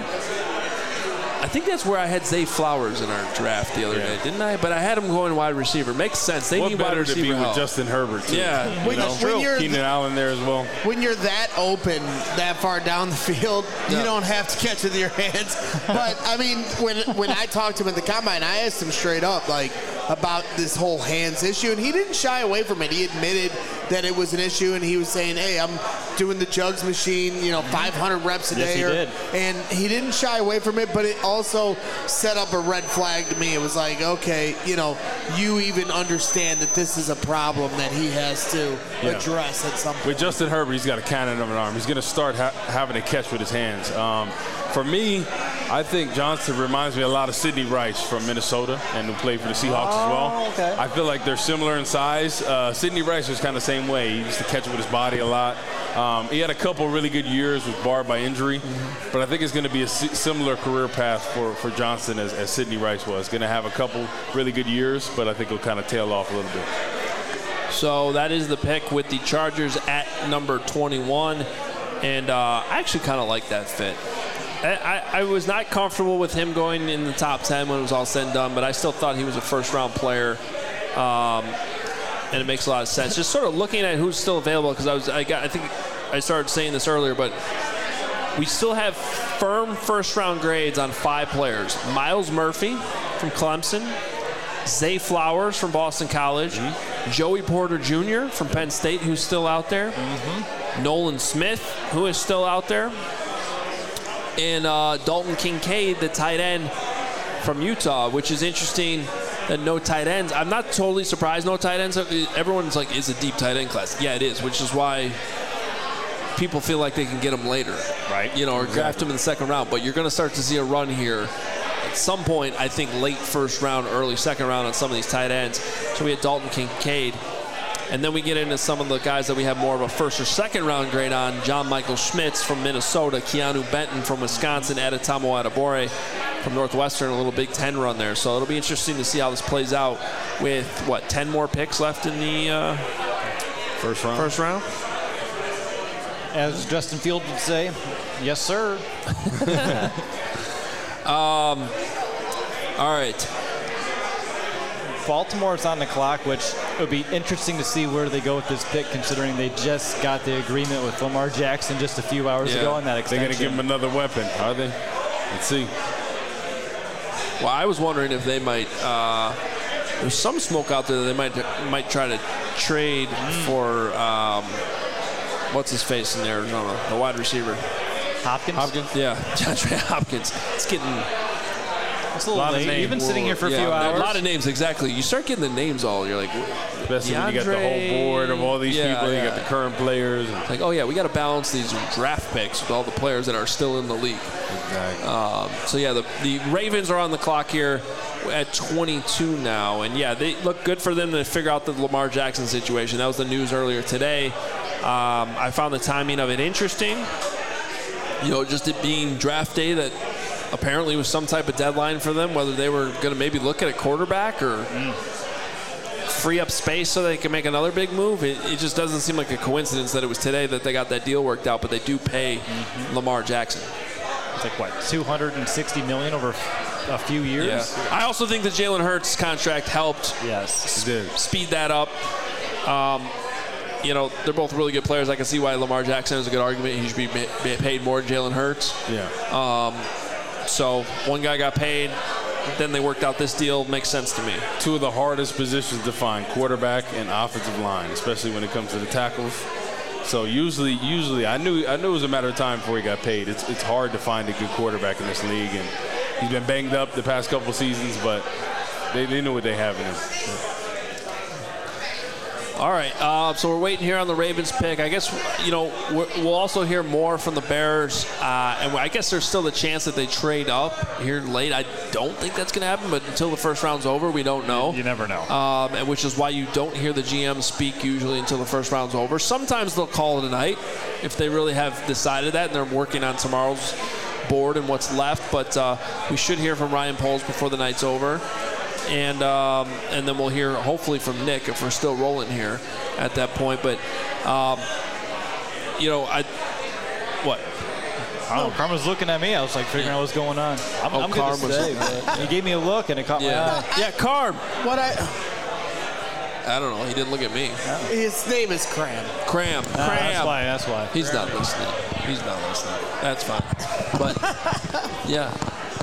I think that's where I had Zay Flowers in our draft the other day, didn't I? But I had him going wide receiver. Makes sense. They need wide receiver to be help. with Justin Herbert, too. Yeah. That's true. Keenan Allen there as well. When you're that open, that far down the field, you don't have to catch with your hands. But, I mean, when I talked to him at the Combine, I asked him straight up, about this whole hands issue, and he didn't shy away from it. He admitted that it was an issue, and he was saying, hey, I'm doing the jugs machine, 500 reps a day. He did. And he didn't shy away from it, but it also set up a red flag to me. It was like, okay, you even understand that this is a problem that he has to address at some point. With Justin Herbert, he's got a cannon of an arm. He's going to start having to catch with his hands. For me, I think Johnson reminds me a lot of Sidney Rice from Minnesota, and who played for the Seahawks as well. Okay. I feel like they're similar in size. Sidney Rice was kind of the same way. He used to catch it with his body a lot. He had a couple really good years, was barred by injury, but I think it's going to be a similar career path for Johnson as Sidney Rice was. Going to have a couple really good years, but I think he'll kind of tail off a little bit. So that is the pick with the Chargers at number 21, and I actually kind of like that fit. I was not comfortable with him going in the top 10 when it was all said and done, but I still thought he was a first-round player, and it makes a lot of sense. Just sort of looking at who's still available, because I think I started saying this earlier, but we still have firm first-round grades on 5 players. Myles Murphy from Clemson, Zay Flowers from Boston College, Joey Porter Jr. from Penn State, who's still out there, Nolan Smith, who is still out there, and Dalton Kincaid, the tight end from Utah, which is interesting that no tight ends. I'm not totally surprised no tight ends. Everyone's like, it's a deep tight end class. Yeah, it is, which is why people feel like they can get them later. Right. Or draft them in the second round. But you're going to start to see a run here at some point, I think late first round, early second round on some of these tight ends. So we had Dalton Kincaid. And then we get into some of the guys that we have more of a first or second round grade on. John Michael Schmitz from Minnesota, Keanu Benton from Wisconsin, Adetomo Adebawore from Northwestern, a little Big Ten run there. So it'll be interesting to see how this plays out with, 10 more picks left in the first round? As Justin Fields would say, yes, sir. All right. Baltimore's on the clock, which would be interesting to see where they go with this pick, considering they just got the agreement with Lamar Jackson just a few hours ago on that extension. They're going to give him another weapon, are they? Let's see. Well, I was wondering if they might. There's some smoke out there that they might try to trade for what's his face in Arizona, the wide receiver. Hopkins? Yeah, DeAndre Hopkins. It's getting. It's a little late. You've been sitting here for a few hours. A lot of names, exactly. You start getting the names all, you're like, especially when you got the whole board of all these people. You got the current players. It's like, we got to balance these draft picks with all the players that are still in the league. Exactly. The Ravens are on the clock here at 22 now. And, they look good for them to figure out the Lamar Jackson situation. That was the news earlier today. I found the timing of it interesting. Just it being draft day, that apparently was some type of deadline for them, whether they were going to maybe look at a quarterback or free up space so they can make another big move. It just doesn't seem like a coincidence that it was today that they got that deal worked out, but they do pay Lamar Jackson. It's like, $260 million over a few years? Yeah. I also think the Jalen Hurts contract helped speed that up. They're both really good players. I can see why Lamar Jackson is a good argument. He should be paid more than Jalen Hurts. Yeah. So one guy got paid, then they worked out this deal. Makes sense to me. Two of the hardest positions to find, quarterback and offensive line, especially when it comes to the tackles. So usually, I knew it was a matter of time before he got paid. It's hard to find a good quarterback in this league, and He's been banged up the past couple seasons, but they know what they have in him. All right, so we're waiting here on the Ravens pick. I guess, we'll also hear more from the Bears, and I guess there's still the chance that they trade up here late. I don't think that's going to happen, but until the first round's over, we don't know. You never know. And which is why you don't hear the GM speak usually until the first round's over. Sometimes they'll call it a night if they really have decided that, and they're working on tomorrow's board and what's left, but we should hear from Ryan Poles before the night's over. And then we'll hear hopefully from Nick if we're still rolling here at that point. But what? I don't know. Karma's looking at me. I was like figuring out what's going on. I'm good to stay, but he gave me a look and it caught my eye. Yeah, Carm. I don't know. He didn't look at me. His name is Cram. Cram. That's why. He's not listening. That's fine. But yeah.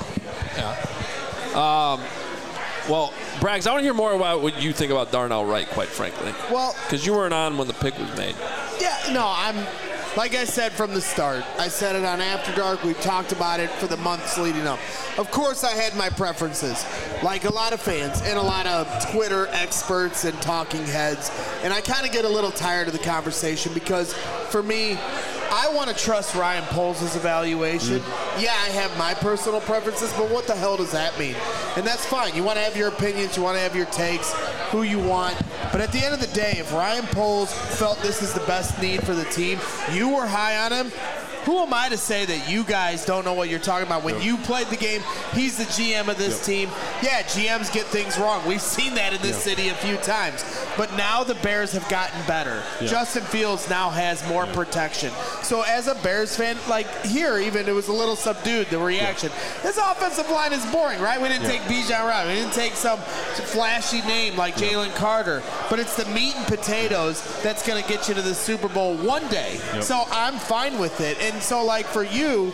Well, Braggs, I want to hear more about what you think about Darnell Wright, quite frankly. Well, because you weren't on when the pick was made. Yeah, no, like I said from the start. I said it on After Dark. We've talked about it for the months leading up. Of course, I had my preferences, like a lot of fans and a lot of Twitter experts and talking heads. And I kind of get a little tired of the conversation because, for me, I want to trust Ryan Poles' evaluation. Yeah, I have my personal preferences, but what the hell does that mean? And that's fine. You want to have your opinions. You want to have your takes, who you want. But at the end of the day, if Ryan Poles felt this is the best need for the team, you were high on him, who am I to say that you guys don't know what you're talking about? When you played the game, he's the GM of this team. Yeah, GMs get things wrong. We've seen that in this city a few times. But now the Bears have gotten better. Justin Fields now has more protection. So as a Bears fan, like here even, it was a little subdued, the reaction. This offensive line is boring, right? We didn't take Bijan Robinson. We didn't take some flashy name like Jalen Carter. But it's the meat and potatoes that's going to get you to the Super Bowl one day. So I'm fine with it. And so, like, for you,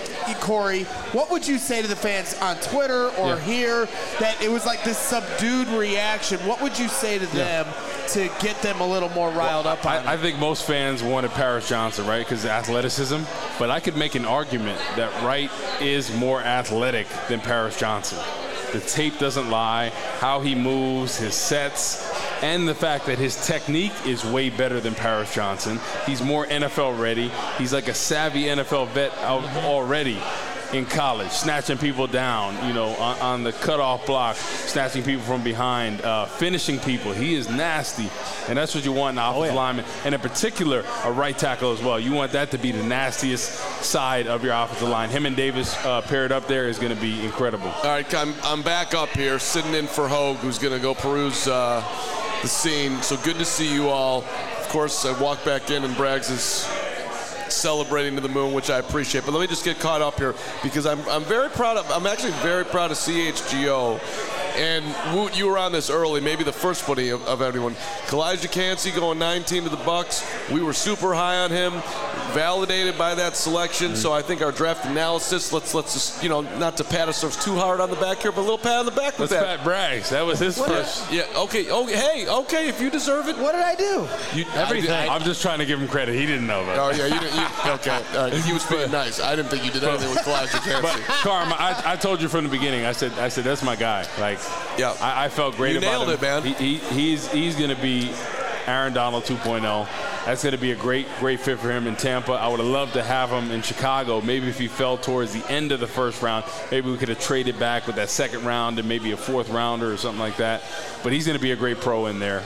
Corey, what would you say to the fans on Twitter or here that it was like this subdued reaction? What would you say to them to get them a little more riled up on it? I think most fans wanted Paris Johnson, right, because of athleticism. But I could make an argument that Wright is more athletic than Paris Johnson. The tape doesn't lie. How he moves, his sets, and the fact that his technique is way better than Paris Johnson. He's more NFL ready. He's like a savvy NFL vet already in college, snatching people down, on the cutoff block, snatching people from behind, finishing people. He is nasty, and that's what you want in an offensive lineman, and in particular, a right tackle as well. You want that to be the nastiest side of your offensive line. Him and Davis paired up there is going to be incredible. All right, I'm back up here, sitting in for Hogue, who's going to go peruse the scene. So good to see you all. Of course, I walk back in and Braggs is celebrating to the moon, which I appreciate. But let me just get caught up here because I'm actually very proud of CHGO. And Woot, you were on this early, maybe the first buddy of everyone. Kalijah Cansey going 19 to the Bucks. We were super high on him, validated by that selection. So I think our draft analysis, let's just, not to pat ourselves too hard on the back here, but a little pat on the back with that. Let's pat Braggs. That was his first. Yeah, okay. Okay, if you deserve it. What did I do? Everything. I'm just trying to give him credit. He didn't know about it. Oh, yeah, you didn't. Okay. He was being nice. I didn't think you did anything with Kalijah Cansey. But, Carm, I told you from the beginning, I said that's my guy. Like, yeah, I felt great about him. You nailed it, man. He's going to be Aaron Donald 2.0. That's going to be a great fit for him in Tampa. I would have loved to have him in Chicago. Maybe if he fell towards the end of the first round, maybe we could have traded back with that second round and maybe a fourth rounder or something like that. But he's going to be a great pro in there.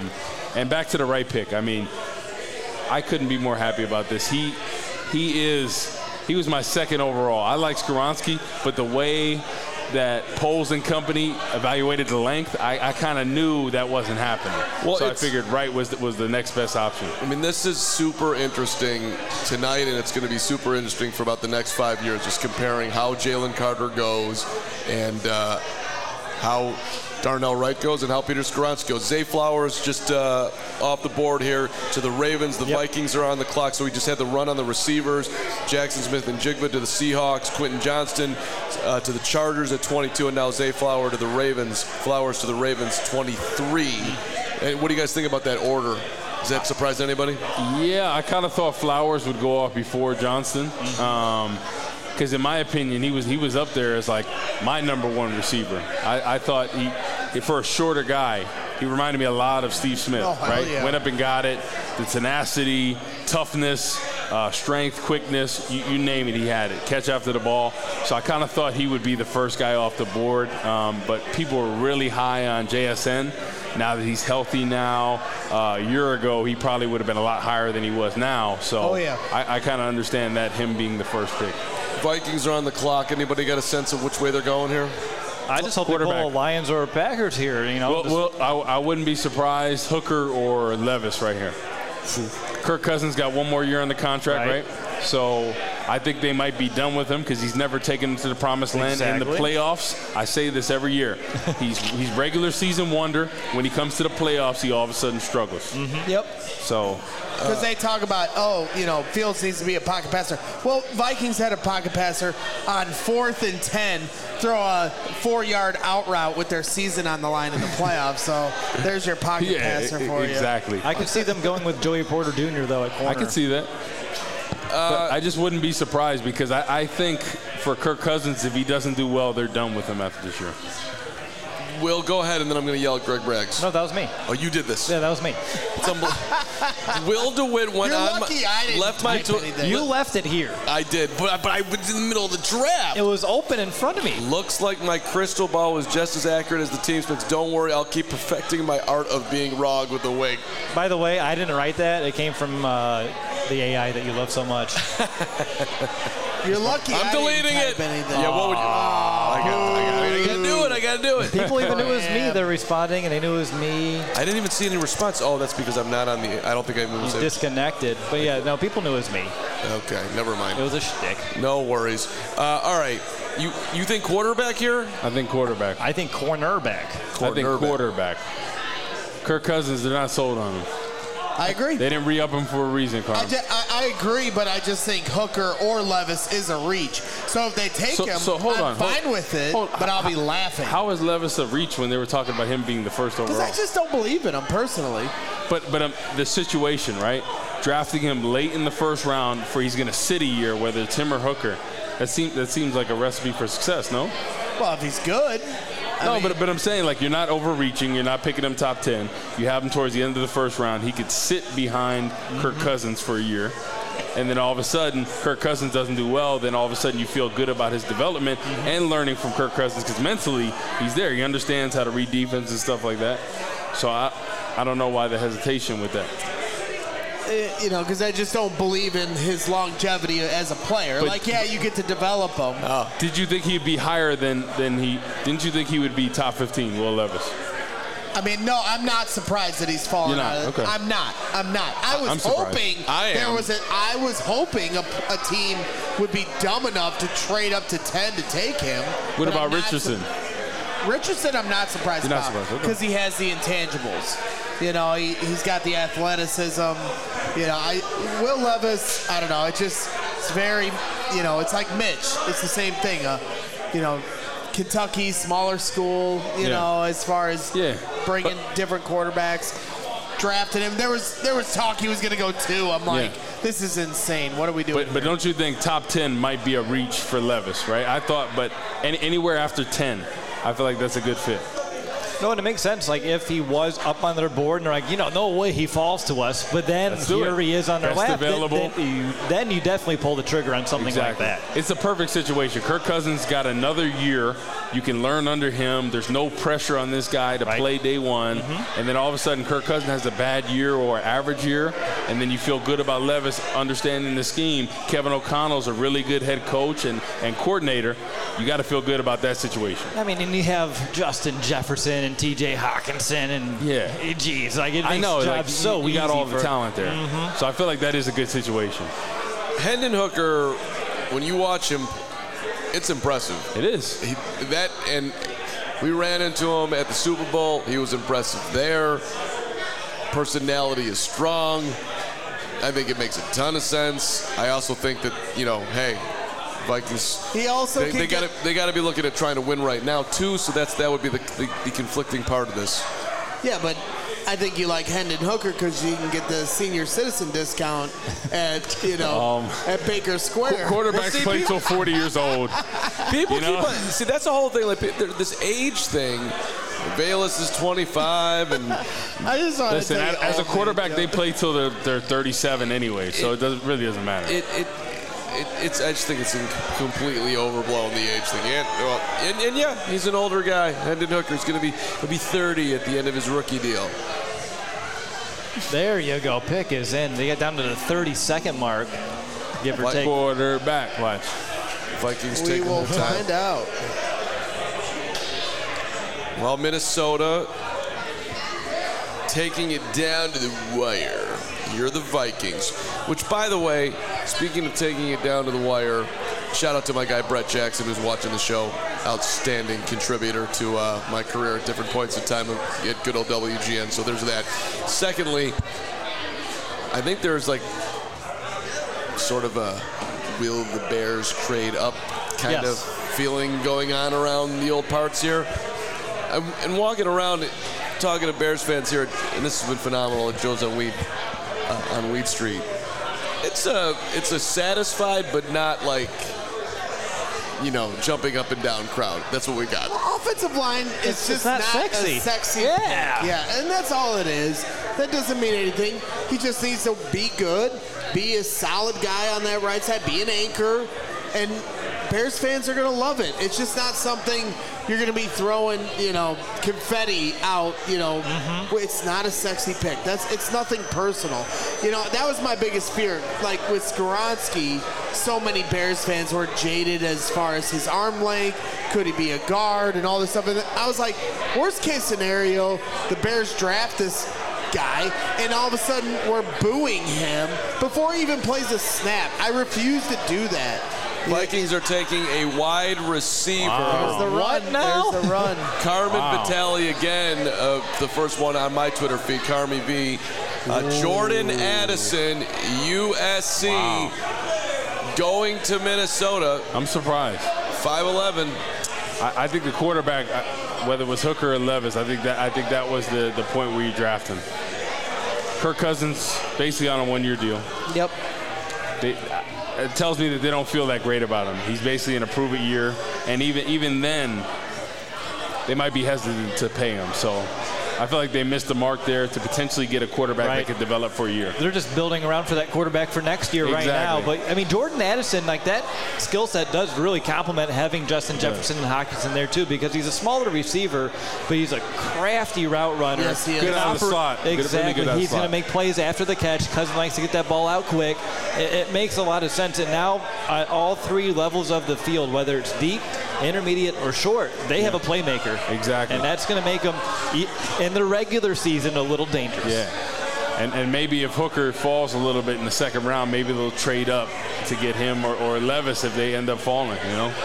And back to the right pick. I mean, I couldn't be more happy about this. He was my second overall. I like Skoronski, but the way that Poles and company evaluated the length, I kind of knew that wasn't happening. Well, so I figured Wright was the next best option. I mean, this is super interesting tonight, and it's going to be super interesting for about the next 5 years, just comparing how Jalen Carter goes and how Darnell Wright goes and how Peter Skoronski goes. Zay Flowers just off the board here to the Ravens. The Vikings are on the clock, so we just had the run on the receivers. Jackson Smith and Jigba to the Seahawks. Quentin Johnston to the Chargers at 22, and now Zay Flowers to the Ravens. 23. And what do you guys think about that order? Does that surprise anybody? Yeah, I kind of thought Flowers would go off before Johnston. because in my opinion, he was up there as like my number one receiver. I thought for a shorter guy, he reminded me a lot of Steve Smith, right? Yeah. Went up and got it. The tenacity, toughness, strength, quickness, you name it, he had it. Catch after the ball. So I kind of thought he would be the first guy off the board, but people were really high on JSN. Now that he's healthy now, a year ago he probably would have been a lot higher than he was now. So I kind of understand that, him being the first pick. Vikings are on the clock. Anybody got a sense of which way they're going here? I just hope they pull Lions or Packers here. You know, well, I wouldn't be surprised, Hooker or Levis right here. Kirk Cousins got one more year on the contract, right? So I think they might be done with him because he's never taken them to the promised land. In the playoffs, I say this every year, he's regular season wonder. When he comes to the playoffs, he all of a sudden struggles. Yep. So because they talk about, Fields needs to be a pocket passer. Well, Vikings had a pocket passer on 4th and 10, throw a 4-yard out route with their season on the line in the playoffs. So there's your pocket passer for you. Exactly. I could see them going with Joey Porter Jr. though at corner. I could see that. But I just wouldn't be surprised because I think for Kirk Cousins, if he doesn't do well, they're done with him after this year. Will, go ahead, and then I'm going to yell at Greg Braggs. No, that was me. Oh, you did this? Yeah, that was me. Will DeWitt went on. Lucky I didn't left my You left it here. I did, but I was in the middle of the draft. It was open in front of me. Looks like my crystal ball was just as accurate as the team's picks. Don't worry, I'll keep perfecting my art of being wrong with the wig. By the way, I didn't write that. It came from the AI that you love so much. You're lucky. I'm deleting it. Yeah, what would you? I gotta do it. People even knew it was me. They're responding, and they knew it was me. I didn't even see any response. Oh, that's because I'm not on the. I don't think I moved. Disconnected. But yeah, no, people knew it was me. Okay, never mind. It was a shtick. No worries. All right, you think quarterback here? I think quarterback. I think cornerback. I think quarterback. Kirk Cousins, they're not sold on him. I agree. They didn't re-up him for a reason, Carl. I agree, but I just think Hooker or Levis is a reach. So if they take him, I'm fine with it, but I'll be laughing. How is Levis a reach when they were talking about him being the first overall? Because I just don't believe in him personally. But the situation, right? Drafting him late in the first round for he's going to sit a year, whether it's him or Hooker, that seems like a recipe for success, no? Well, if he's good. But I'm saying, like, you're not overreaching. You're not picking him top 10. You have him towards the end of the first round. He could sit behind Kirk Cousins for a year. And then all of a sudden, Kirk Cousins doesn't do well. Then all of a sudden, you feel good about his development and learning from Kirk Cousins because mentally, he's there. He understands how to read defense and stuff like that. So I don't know why the hesitation with that. Because I just don't believe in his longevity as a player. But you get to develop him. Did you think he'd be higher than he? Didn't you think he would be top 15, Will Levis? I mean, no, I'm not surprised that he's fallen out of it. Okay. I'm not. I was hoping I was hoping a team would be dumb enough to trade up to 10 to take him. What about Richardson? Richardson, I'm not surprised about because he has the intangibles. He's got the athleticism. Will Levis, I don't know. It's very, it's like Mitch. It's the same thing. Kentucky, smaller school, as far as bringing different quarterbacks. Drafted him. There was talk he was going to go 2. I'm like, this is insane. What are we doing? But don't you think top 10 might be a reach for Levis, right? I thought, but anywhere after 10, I feel like that's a good fit. No, and it makes sense. Like, if he was up on their board and they're like, no way he falls to us, but then here he is on their lap, then you definitely pull the trigger on something like that. It's a perfect situation. Kirk Cousins got another year. You can learn under him. There's no pressure on this guy to play day one. And then all of a sudden, Kirk Cousins has a bad year or average year, and then you feel good about Levis understanding the scheme. Kevin O'Connell's a really good head coach and coordinator. You got to feel good about that situation. I mean, and you have Justin Jefferson and T.J. Hawkinson and geez, like it makes jobs so easy. We got all the talent there, so I feel like that is a good situation. Hendon Hooker, when you watch him, it's impressive. It is. And we ran into him at the Super Bowl. He was impressive there. Personality is strong. I think it makes a ton of sense. I also think that Vikings. He also they got to be looking at trying to win right now too. So that would be the conflicting part of this. Yeah, but I think you like Hendon Hooker because you can get the senior citizen discount at at Baker Square. Quarterbacks play till 40 years old. People see, that's the whole thing. Like this age thing. Bayless is 25, and I just want listen. to As a quarterback, they play till they're 37 anyway, so it really doesn't matter. I just think it's completely overblown, the age thing. And yeah, he's an older guy. Hendon Hooker's he'll be 30 at the end of his rookie deal. There you go. Pick is in. They get down to the 30-second mark. Give or take. Quarterback. Watch. Vikings We will find out. Well, Minnesota taking it down to the wire. You're the Vikings. Which, by the way, speaking of taking it down to the wire, shout out to my guy Brett Jackson who's watching the show. Outstanding contributor to my career at different points in time at good old WGN. So there's that. Secondly, I think there's like sort of a will the Bears trade up kind of feeling going on around the old parts here. And walking around talking to Bears fans here, and this has been phenomenal at Joe's on Weed Street. It's a satisfied but not like, jumping up and down crowd. That's what we got. The offensive line is just not sexy. A sexy Yeah. pick. Yeah, and that's all it is. That doesn't mean anything. He just needs to be good, be a solid guy on that right side, be an anchor, and Bears fans are going to love it. It's just not something you're going to be throwing, confetti out, It's not a sexy pick. It's nothing personal. That was my biggest fear. Like with Skoronski, so many Bears fans were jaded as far as his arm length. Could he be a guard and all this stuff? And I was like, worst case scenario, the Bears draft this guy, and all of a sudden we're booing him before he even plays a snap. I refuse to do that. Vikings are taking a wide receiver. There's the run. There's the run. Carmen Vitale again, the first one on my Twitter feed, Carmi V. Jordan Addison, USC, going to Minnesota. I'm surprised. 5'11". I think the quarterback, whether it was Hooker or Levis, I think that was the point where you draft him. Kirk Cousins basically on a one-year deal. Yep. It tells me that they don't feel that great about him. He's basically in a prove-it year, and even then, they might be hesitant to pay him. So I feel like they missed the mark there to potentially get a quarterback that could develop for a year. They're just building around for that quarterback for next year right now. But, Jordan Addison, like that skill set does really complement having Justin Jefferson and Hockenson there, too, because he's a smaller receiver, but he's a crafty route runner. Yes, he is. Good out of the slot. Exactly. Really he's going to make plays after the catch. Cousin likes to get that ball out quick. It makes a lot of sense. And now at all three levels of the field, whether it's deep, intermediate, or short, they have a playmaker. Exactly. And that's going to make them, in the regular season, a little dangerous. Yeah. And maybe if Hooker falls a little bit in the second round, maybe they'll trade up to get him or Levis if they end up falling,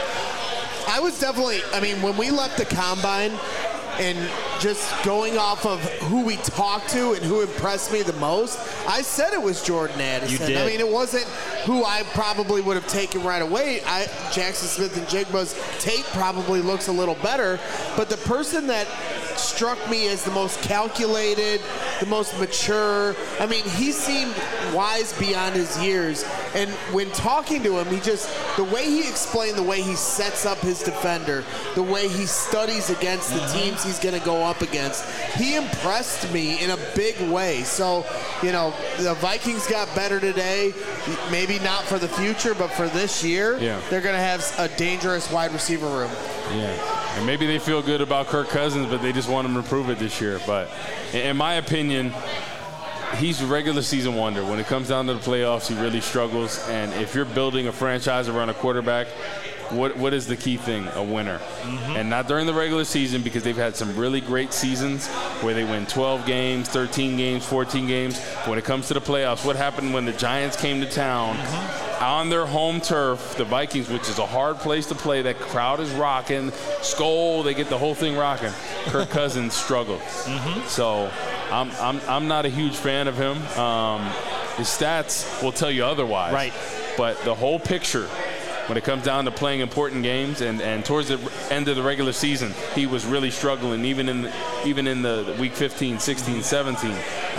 I was definitely, when we left the combine and just going off of who we talked to and who impressed me the most, I said it was Jordan Addison. You did. It wasn't who I probably would have taken right away. Jackson Smith and Jigba's tape probably looks a little better, but the person that struck me as the most calculated, the most mature. He seemed wise beyond his years. And when talking to him, the way he explained the way he sets up his defender, the way he studies against the teams he's going to go up against, he impressed me in a big way. So, the Vikings got better today. Maybe not for the future, but for this year, they're going to have a dangerous wide receiver room. Yeah. And maybe they feel good about Kirk Cousins, but they just want him to prove it this year. But in my opinion, he's a regular season wonder. When it comes down to the playoffs, he really struggles. And if you're building a franchise around a quarterback, what is the key thing? A winner. And not during the regular season, because they've had some really great seasons where they win 12 games, 13 games, 14 games. When it comes to the playoffs, what happened when the Giants came to town? On their home turf, the Vikings, which is a hard place to play, that crowd is rocking, Skol, they get the whole thing rocking. Kirk Cousins struggled. So I'm not a huge fan of him. His stats will tell you otherwise. Right. But the whole picture when it comes down to playing important games and towards the end of the regular season, he was really struggling, even in the week 15, 16, 17.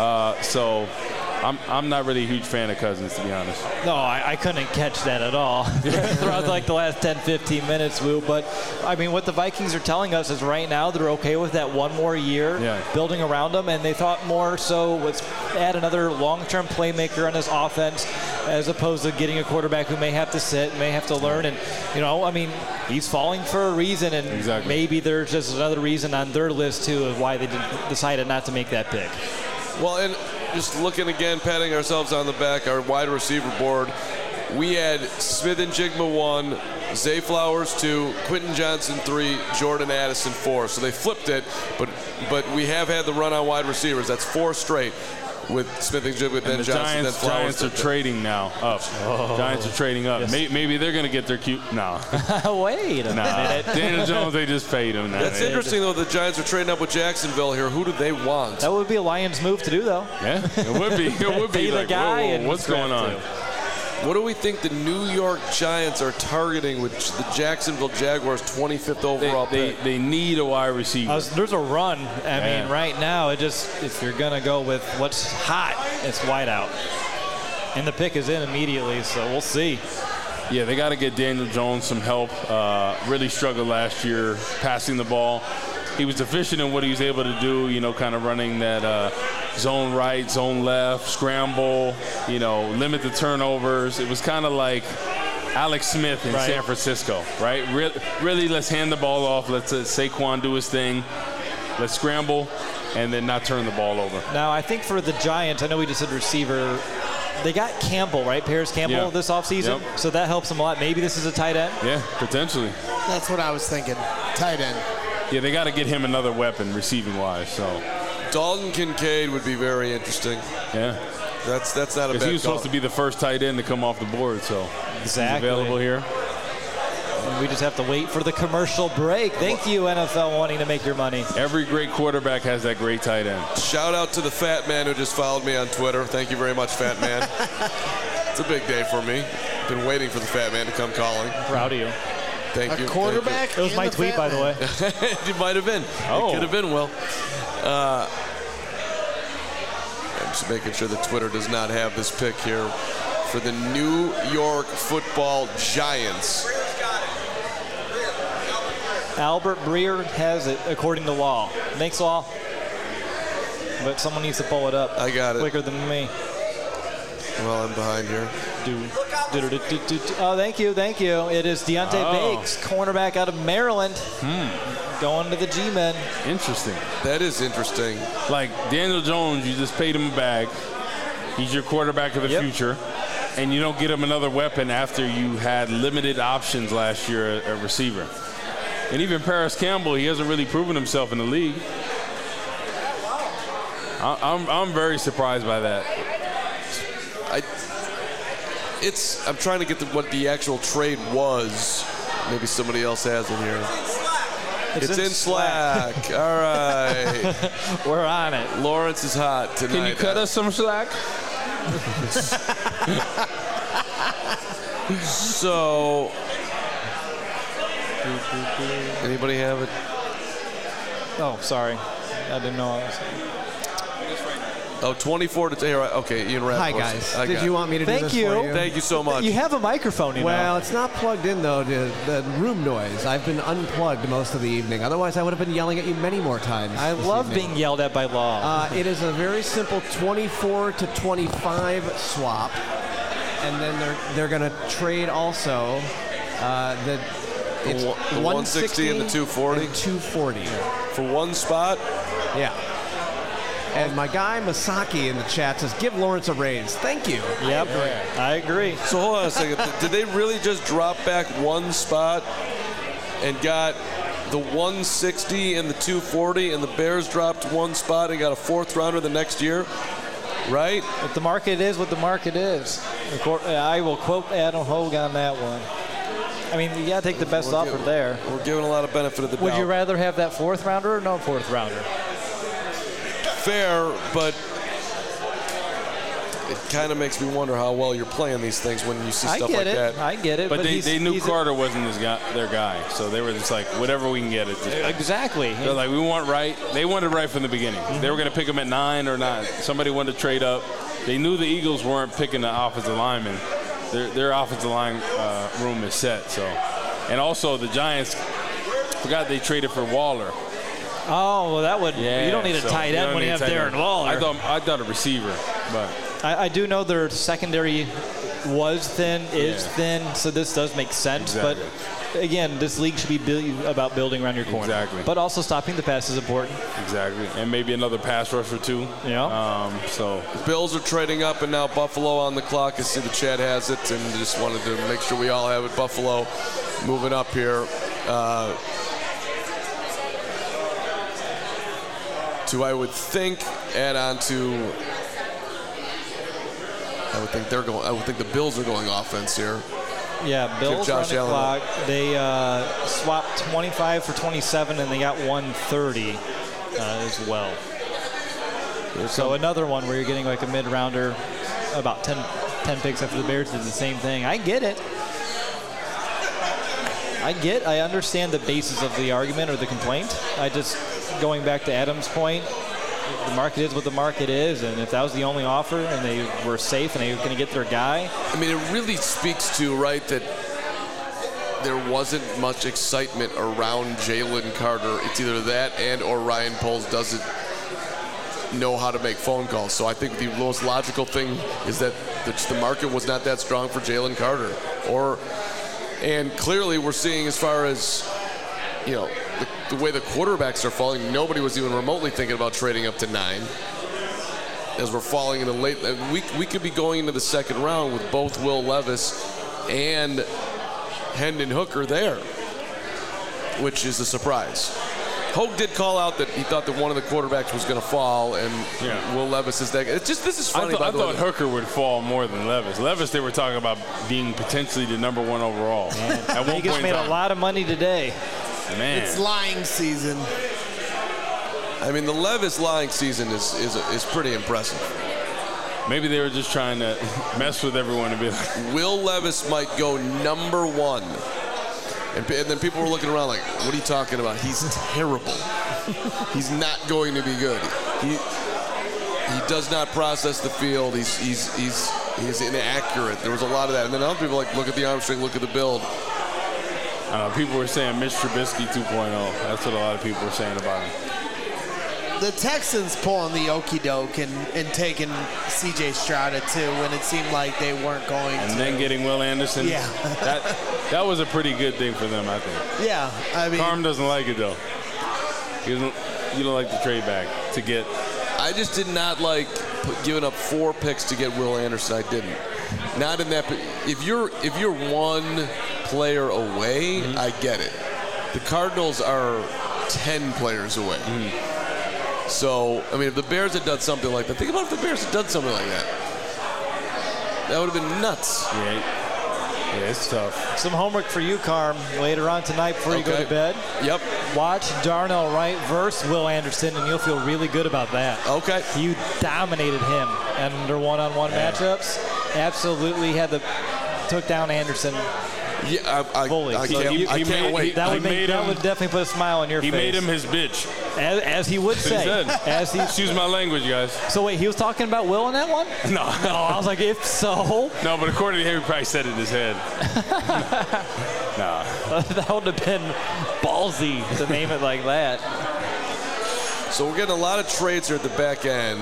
So I'm not really a huge fan of Cousins, to be honest. No, I couldn't catch that at all throughout like the last 10, 15 minutes, Lou. But, I mean, what the Vikings are telling us is right now they're okay with that one more year building around them, and they thought more so let's add another long-term playmaker on this offense as opposed to getting a quarterback who may have to sit, may have to learn. And, you know, I mean, he's falling for a reason, and maybe there's just another reason on their list, too, of why they decided not to make that pick. Well, and just looking again, patting ourselves on the back, our wide receiver board, we had Smith-Njigba 1, Zay Flowers 2, Quentin Johnson 3, Jordan Addison 4. So they flipped it, but we have had the run on wide receivers. That's 4 straight with Smith-Njigba, then Johnson, then Flowers. Giants are trading now up. Giants are trading up. Yes. Maybe they're going to get their cue. No. Wait a minute. Daniel Jones, they just paid him. That's interesting, though. The Giants are trading up with Jacksonville here. Who do they want? That would be a Lions move to do, though. Yeah, it would be. It would be. Pay the guy. Whoa, what's going on? What do we think the New York Giants are targeting with the Jacksonville Jaguars 25th overall pick? They need a wide receiver. There's a run. I mean, right now, if you're going to go with what's hot, it's wide out. And the pick is in immediately, so we'll see. Yeah, they got to get Daniel Jones some help. Really struggled last year passing the ball. He was deficient in what he was able to do, you know, kind of running that zone right, zone left, scramble, you know, limit the turnovers. It was kind of like Alex Smith in San Francisco, right? Really, let's hand the ball off. Let's Saquon do his thing. Let's scramble and then not turn the ball over. Now, I think for the Giants, I know we just said receiver, they got Campbell, right? Paris Campbell this offseason. Yep. So that helps them a lot. Maybe this is a tight end? Yeah, potentially. That's what I was thinking. Tight end. Yeah, they got to get him another weapon receiving-wise. So Dalton Kincaid would be very interesting. Yeah. That's not a bad call. Because he was supposed to be the first tight end to come off the board, so he's available here. And we just have to wait for the commercial break. Thank you, NFL, wanting to make your money. Every great quarterback has that great tight end. Shout out to the fat man who just followed me on Twitter. Thank you very much, fat man. It's a big day for me. Been waiting for the fat man to come calling. Proud of you. Thank you. A quarterback? It was my tweet, by the way. It might have been. It could have been, Will. I'm just making sure that Twitter does not have this pick here for the New York Football Giants. Albert Breer has it, according to law. Thanks, law. But someone needs to pull it up. I got it. Quicker than me. Well, I'm behind here. Oh, thank you. It is Deontay Bates, cornerback out of Maryland, going to the G-Men. Interesting. That is interesting. Like Daniel Jones, you just paid him a bag. He's your quarterback of the future. And you don't get him another weapon after you had limited options last year at receiver. And even Paris Campbell, he hasn't really proven himself in the league. I'm very surprised by that. I'm trying to get what the actual trade was. Maybe somebody else has it here. It's in Slack. All right. We're on it. Lawrence is hot tonight. Can you cut us some slack? So, anybody have it? Oh, sorry. I didn't know I was. Oh, 24 to here. Okay, Ian Rapp. Hi, guys. Did you want me to do this for you? Thank you so much. You have a microphone, you know. Well, it's not plugged in, though, to the room noise. I've been unplugged most of the evening. Otherwise, I would have been yelling at you many more times. I love being yelled at by law. It is a very simple 24 to 25 swap. And then they're going to trade also the 160 and the 240? And 240. For one spot? Yeah. And my guy Masaki in the chat says, give Lawrence a raise. Thank you. Yep, I agree. So hold on a second. Did they really just drop back one spot and got the 160 and the 240, and the Bears dropped one spot and got a fourth rounder the next year? Right? But the market is what the market is. I will quote Adam Hogue on that one. I mean, you got to take the best offer there. We're giving a lot of benefit of the doubt. Would you rather have that fourth rounder or no fourth rounder? Fair, but it kind of makes me wonder how well you're playing these things when you see stuff like that. I get it. But they knew Carter wasn't their guy, so they were just like, whatever we can get it. Exactly. They're like, we want Wright. They wanted Wright from the beginning. Mm-hmm. They were going to pick him at 9 or 9. Somebody wanted to trade up. They knew the Eagles weren't picking the offensive lineman. Their offensive line room is set. So, and also the Giants forgot they traded for Waller. Oh, well, that would. Yeah, you don't need a tight end when you have Darren Waller. I thought a receiver, but I do know their secondary was thin, is thin, so this does make sense. Exactly. But again, this league should be about building around your corner. Exactly. But also stopping the pass is important. Exactly, and maybe another pass rush or two. Yeah. So the Bills are trading up, and now Buffalo on the clock. I see the chat has it, and just wanted to make sure we all have it. Buffalo moving up here. To, I would think, add on to. I would think the Bills are going offense here. Yeah, Bills are on the clock. They swapped 25 for 27, and they got 130 as well. So another one where you're getting like a mid-rounder, about 10 picks after the Bears did the same thing. I get it. I understand the basis of the argument or the complaint. Going back to Adam's point, the market is what the market is, and if that was the only offer and they were safe and they were going to get their guy. I mean, it really speaks to, right, that there wasn't much excitement around Jalen Carter. It's either that and or Ryan Poles doesn't know how to make phone calls. So I think the most logical thing is that the market was not that strong for Jalen Carter. And clearly we're seeing, as far as, you know, the way the quarterbacks are falling, nobody was even remotely thinking about trading up to 9. As we're falling into late, we could be going into the second round with both Will Levis and Hendon Hooker there, which is a surprise. Hogue did call out that he thought that one of the quarterbacks was going to fall, and Will Levis is that. It's just, this is funny. I thought Hooker would fall more than Levis. Levis, they were talking about being potentially the number 1 overall. At one point, made a lot of money today. Man. It's lying season. I mean, the Levis lying season is pretty impressive. Maybe they were just trying to mess with everyone and be like, Will Levis might go number 1. And then people were looking around like, what are you talking about? He's terrible. He's not going to be good. He does not process the field. He's inaccurate. There was a lot of that. And then other people like, look at the arm strength, look at the build. I don't know, people were saying Mitch Trubisky 2.0. That's what a lot of people were saying about him. The Texans pulling the okie doke and taking C.J. Stroud at 2 when it seemed like they weren't going to. And then getting Will Anderson. Yeah. that was a pretty good thing for them, I think. Yeah, I mean. Carm doesn't like it, though. You don't like the trade back to get. I just did not like giving up 4 picks to get Will Anderson. I didn't. Not in that. If you're one player away, I get it. The Cardinals are 10 players away. So, I mean, if the Bears had done something like that, think about if the Bears had done something like that. That would have been nuts. Yeah, it's tough. Some homework for you, Carm, later on tonight before you go to bed. Yep. Watch Darnell Wright versus Will Anderson, and you'll feel really good about that. Okay. You dominated him under one-on-one matchups. Absolutely took down Anderson. Yeah, I can't wait. That would definitely put a smile on your face. He made him his bitch. As he would say. Excuse my language, guys. So wait, he was talking about Will in that one? No. I was like, if so. No, but according to him, he probably said it in his head. Nah. That would have been ballsy to name it like that. So we're getting a lot of trades here at the back end.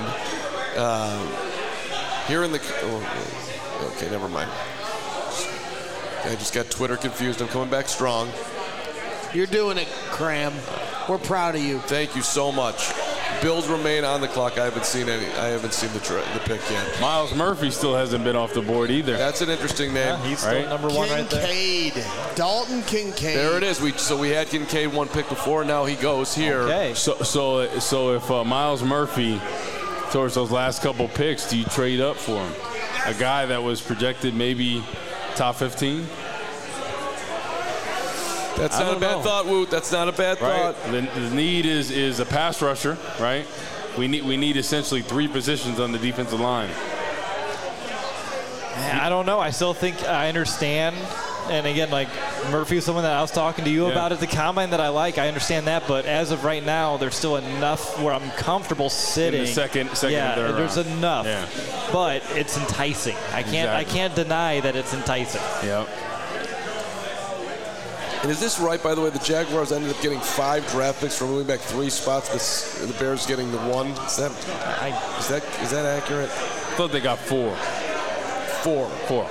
Here in the... okay, never mind. I just got Twitter confused. I'm coming back strong. You're doing it, Cram. We're proud of you. Thank you so much. Bills remain on the clock. I haven't seen the pick yet. Miles Murphy still hasn't been off the board either. That's an interesting name. Yeah, he's still number 1 right there. Kincaid. Dalton Kincaid. There it is. We had Kincaid 1 pick before. Now he goes here. Okay. So if Miles Murphy, towards those last couple picks, do you trade up for him? A guy that was projected maybe top 15? That's not a bad thought, Woot. That's not a bad thought. The need is a pass rusher, right? We need essentially 3 positions on the defensive line. I don't know. I still think I understand. And again, like Murphy was someone that I was talking to you about at the combine that I like. I understand that, but as of right now, there's still enough where I'm comfortable sitting. In the second yeah, there's round. enough. Yeah. But it's enticing. I can't deny that it's enticing. Yep. And is this right, by the way? The Jaguars ended up getting 5 draft picks for moving back 3 spots. The Bears getting the 1. Is that accurate? I thought they got 4. 4.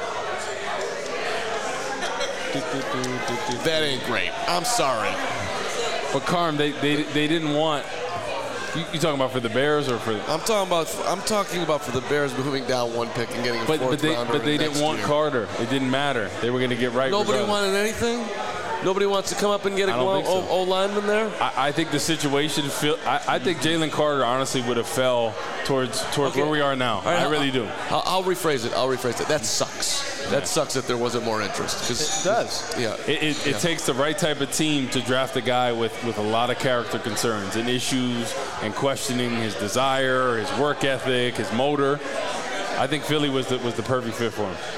That ain't great. I'm sorry. But Carm, they didn't want. You talking about for the Bears or for? I'm talking about for the Bears moving down 1 pick and getting a 4th rounder. But they didn't want Carter. It didn't matter. They were going to get right. Nobody wanted anything. Nobody wants to come up and get a O-lineman there? I think the situation I think Jalen Carter honestly would have fell towards where we are now. Right, I really do. I'll rephrase it. That sucks. That sucks that there wasn't more interest. It does. Yeah. It takes the right type of team to draft a guy with a lot of character concerns and issues and questioning his desire, his work ethic, his motor. I think Philly was the perfect fit for him.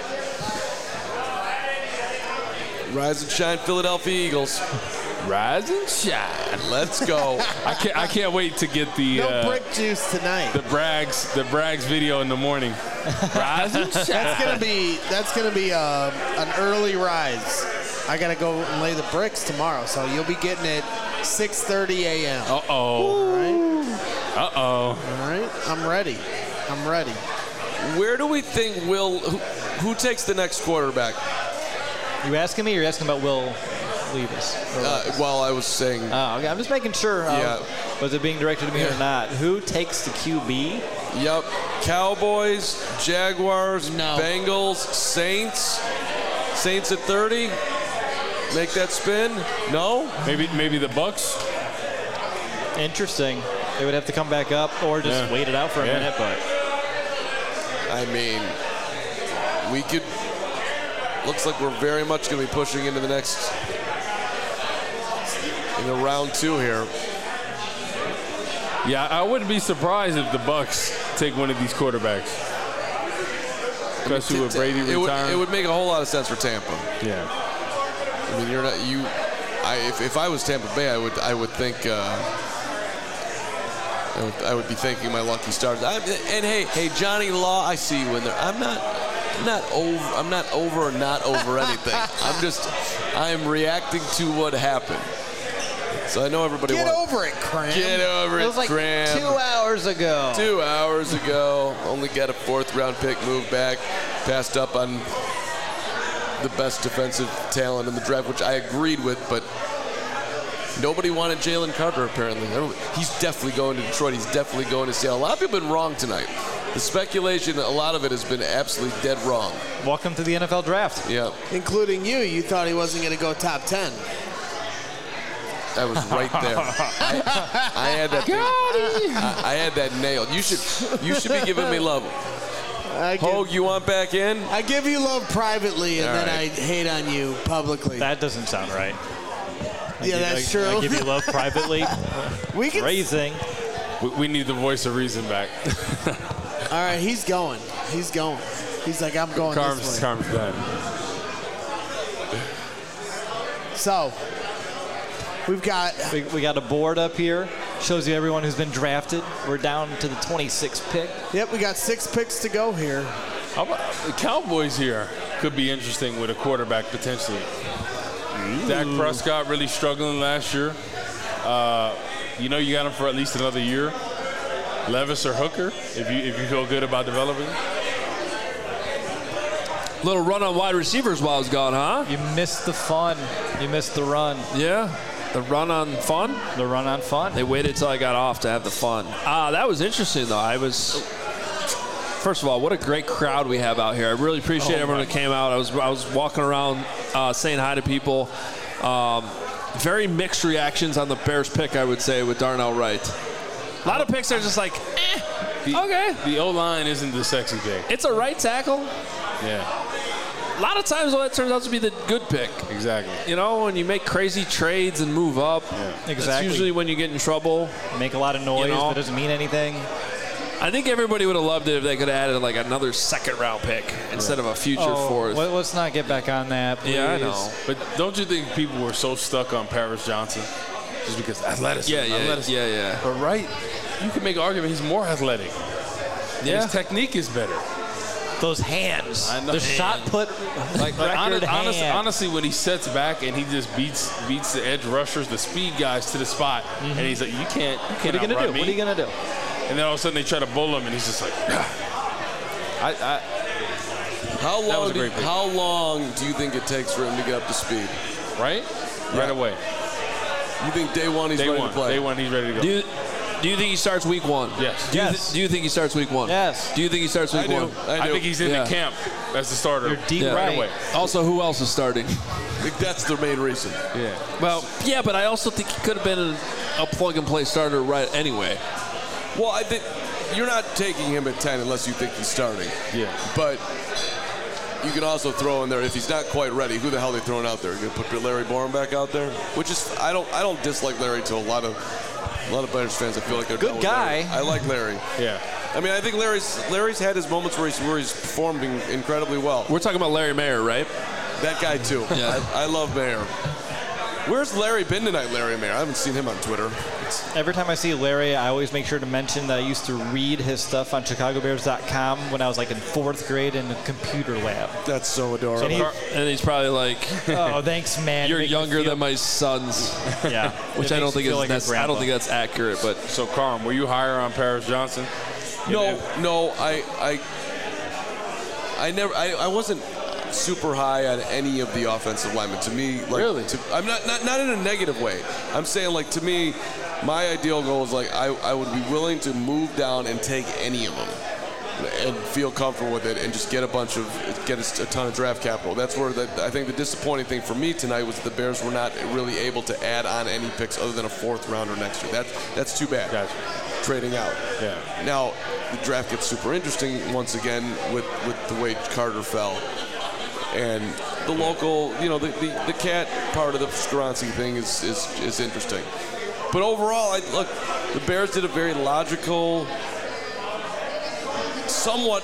Rise and shine, Philadelphia Eagles. Rise and shine. Let's go. I can't wait to get the no brick juice tonight. The Braggs video in the morning. Rise and shine. That's gonna be an early rise. I gotta go and lay the bricks tomorrow, so you'll be getting it 6:30 a.m. All right. All right. I'm ready. Where do we think who takes the next quarterback? You asking me or you asking about Will Levis? Well, I was saying. Oh, okay. I'm just making sure. Was it being directed to me or not? Who takes the QB? Yep. Cowboys, Jaguars, Bengals, Saints. Saints at 30. Make that spin. No. Maybe the Bucks. Interesting. They would have to come back up or just wait it out for a minute, but. I mean, we could. Looks like we're very much going to be pushing into the next, into round 2 here. Yeah, I wouldn't be surprised if the Bucks take one of these quarterbacks, especially with Brady retiring. It would make a whole lot of sense for Tampa. Yeah. I mean, if I was Tampa Bay, I would think. I would be thanking my lucky stars. And hey, Johnny Law, I see you in there. I'm not over or not over anything. I'm reacting to what happened. So I know everybody Get over it, Cram. Get over it, It was like Cram. 2 hours ago. 2 hours ago. Only got a 4th round pick, moved back, passed up on the best defensive talent in the draft, which I agreed with, but nobody wanted Jalen Carter, apparently. He's definitely going to Detroit. He's definitely going to Seattle. A lot of people have been wrong tonight. The speculation, a lot of it has been absolutely dead wrong. Welcome to the NFL draft. Yeah. Including you. You thought he wasn't going to go top 10. I was right there. I had that. I had that nailed. You should be giving me love. Hogue, you want back in? I give you love privately, and then I hate on you publicly. That doesn't sound right. That's true. I give you love privately. We can Raising. We need the voice of reason back. All right, he's going. He's like, I'm going this way. Carm's done. So, we got a board up here. Shows you everyone who's been drafted. We're down to the 26th pick. Yep, we got 6 picks to go here. How about the Cowboys here? Could be interesting with a quarterback potentially. Dak Prescott really struggling last year. You got him for at least another year. Levis or Hooker, if you feel good about developing. Little run on wide receivers while I was gone, huh? You missed the fun. You missed the run. Yeah. The run on fun? The run on fun. They waited till I got off to have the fun. That was interesting, though. First of all, what a great crowd we have out here. I really appreciate everyone that came out. I was walking around saying hi to people. Very mixed reactions on the Bears pick, I would say, with Darnell Wright. A lot of picks are just like, okay. The O-line isn't the sexy pick. It's a right tackle. Yeah. A lot of times, that turns out to be the good pick. Exactly. When you make crazy trades and move up, Exactly. That's usually when you get in trouble. Make a lot of noise, but doesn't mean anything. I think everybody would have loved it if they could have added like another second-round pick instead of a future fourth. Let's not get back on that, please. Yeah, I know. But don't you think people were so stuck on Paris Johnson just because athleticism? Yeah. But right, you can make an argument he's more athletic. Yeah. His technique is better. Those hands. I know. The shot put record hand. Honestly, when he sets back and he just beats the edge rushers, the speed guys to the spot, and he's like, you can't What are you going to do? me. What are you going to do? And then all of a sudden they try to bull him, and he's just like, How long do you think it takes for him to get up to speed? right away. You think day one he's ready to play? Day one he's ready to go. Do you think he starts week 1? Yes. Do you think he starts week 1? Yes. Do you think he starts week 1? I think he's in the camp as the starter. You're deep right away. Also, who else is starting? I think that's the main reason. Yeah. Well, yeah, but I also think he could have been a plug-and-play starter right anyway. Well, I think you're not taking him at 10 unless you think he's starting. Yeah. But you can also throw in there, if he's not quite ready, who the hell are they throwing out there? You're going to put Larry Borom back out there? Which is, I don't dislike Larry to a lot of Bears fans. I feel like they're good guy. I like Larry. Yeah. I mean, I think Larry's had his moments where he's performed incredibly well. We're talking about Larry Mayer, right? That guy, too. Yeah. I love Mayer. Where's Larry been tonight, Larry Mayer? I haven't seen him on Twitter. Every time I see Larry, I always make sure to mention that I used to read his stuff on ChicagoBears.com when I was like in 4th grade in the computer lab. That's so adorable. And he's probably like, oh, thanks, man. you're younger than my sons. Yeah. Which I don't think I don't think that's accurate. But So, Carm, were you higher on Paris Johnson? No, I wasn't super high on any of the offensive linemen. To me, like, really, I'm not in a negative way. I'm saying, like, to me, my ideal goal is like I would be willing to move down and take any of them and feel comfortable with it and just get a ton of draft capital. That's where I think the disappointing thing for me tonight was that the Bears were not really able to add on any picks other than a 4th rounder next year. That's too bad. Gotcha. Trading out. Yeah. Now the draft gets super interesting once again with the way Carter fell. And the local, the cat part of the Skoronski thing is interesting. But overall, look, the Bears did a very logical, somewhat,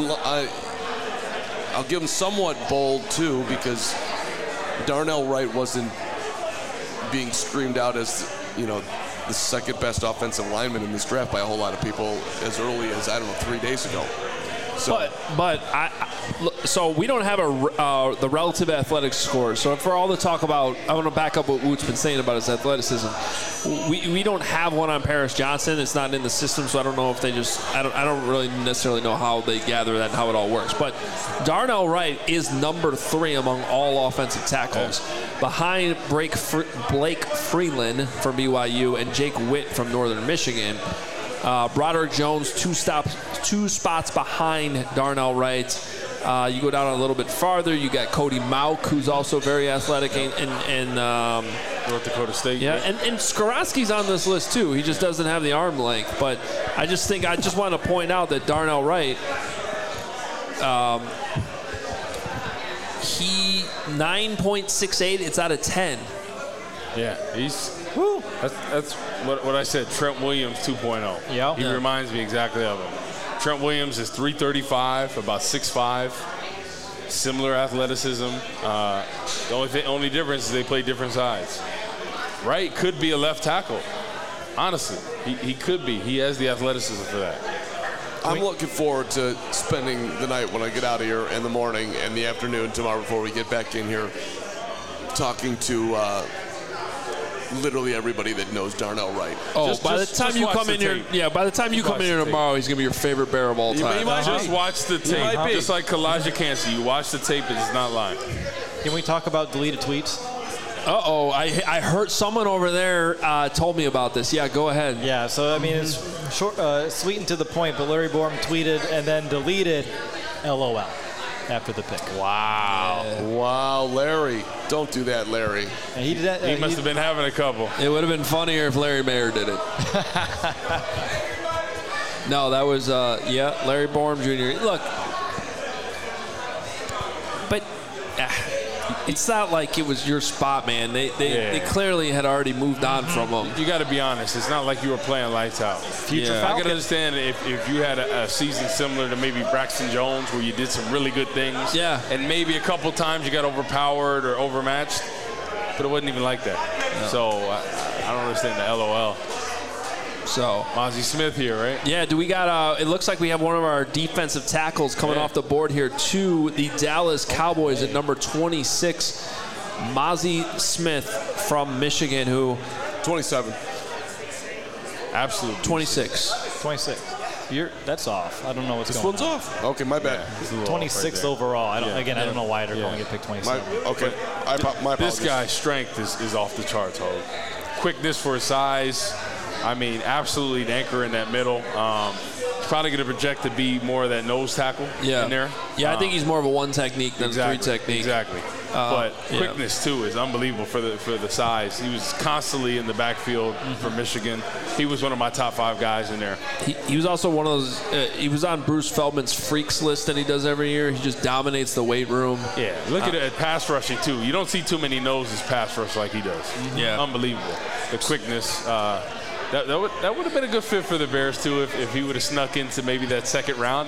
I'll give them somewhat bold too, because Darnell Wright wasn't being screamed out as, the second best offensive lineman in this draft by a whole lot of people as early as, 3 days ago. So. So we don't have the relative athletic score. So for all the talk about, I want to back up what Woot's been saying about his athleticism. We don't have one on Paris Johnson. It's not in the system, so I don't know if they I don't really necessarily know how they gather that and how it all works. But Darnell Wright is number 3 among all offensive tackles, behind Blake Freeland from BYU and Jake Witt from Northern Michigan. Broderick Jones, two spots behind Darnell Wright. You go down a little bit farther, you got Cody Mauk, who's also very athletic, and North Dakota State. Yeah, and Skoronski's on this list too. He just doesn't have the arm length. But I just want to point out that Darnell Wright, he 9.68. It's out of 10. Yeah, that's what I said. Trent Williams 2.0. Yeah. He reminds me exactly of him. Trent Williams is 335, about 6'5", similar athleticism. The only difference is they play different sides. Wright could be a left tackle. Honestly, he could be. He has the athleticism for that. I'm looking forward to spending the night when I get out of here in the morning and the afternoon tomorrow before we get back in here, talking to literally everybody that knows Darnell Wright. By the time you come in here tomorrow, he's gonna be your favorite Bear of all time. Just watch the tape. Just like Kalijah Cansey, you watch the tape and it's not lying. Can we talk about deleted tweets? I heard someone over there told me about this. Yeah, go ahead. Yeah, so I mean it's short, sweet and to the point. But Larry Borom tweeted and then deleted, LOL, after the pick. Wow. Yeah. Wow, Larry. Don't do that, Larry. And he did that. He must have been having a couple. It would have been funnier if Larry Mayer did it. No, that was, Larry Borom Jr. Look, but It's not like it was your spot, man. They clearly had already moved on from him. You got to be honest. It's not like you were playing lights out. I can understand if you had a season similar to maybe Braxton Jones where you did some really good things. Yeah. And maybe a couple times you got overpowered or overmatched, but it wasn't even like that. No. So I don't understand the LOL. So Mazi Smith here, right? Yeah, do we got it looks like we have one of our defensive tackles coming off the board here to the Dallas Cowboys at number 26, Mazi Smith from Michigan, who 27. Absolutely. 26. 26. That's off. I don't know what's going on. This one's off. Okay, my bad. 26th overall. I don't know why they're going to pick 27. My apologies. This guy's strength is off the charts, Hogue. Quickness for his size. I mean, absolutely an anchor in that middle. He's probably going to project to be more of that nose tackle in there. Yeah, I think he's more of a one technique than a three technique. Exactly. But quickness, too, is unbelievable for the size. He was constantly in the backfield for Michigan. He was one of my top 5 guys in there. He was also one of those he was on Bruce Feldman's freaks list that he does every year. He just dominates the weight room. Yeah, look at it at pass rushing, too. You don't see too many noses pass rush like he does. Yeah. Unbelievable. The quickness. That would have been a good fit for the Bears, too, if he would have snuck into maybe that second round.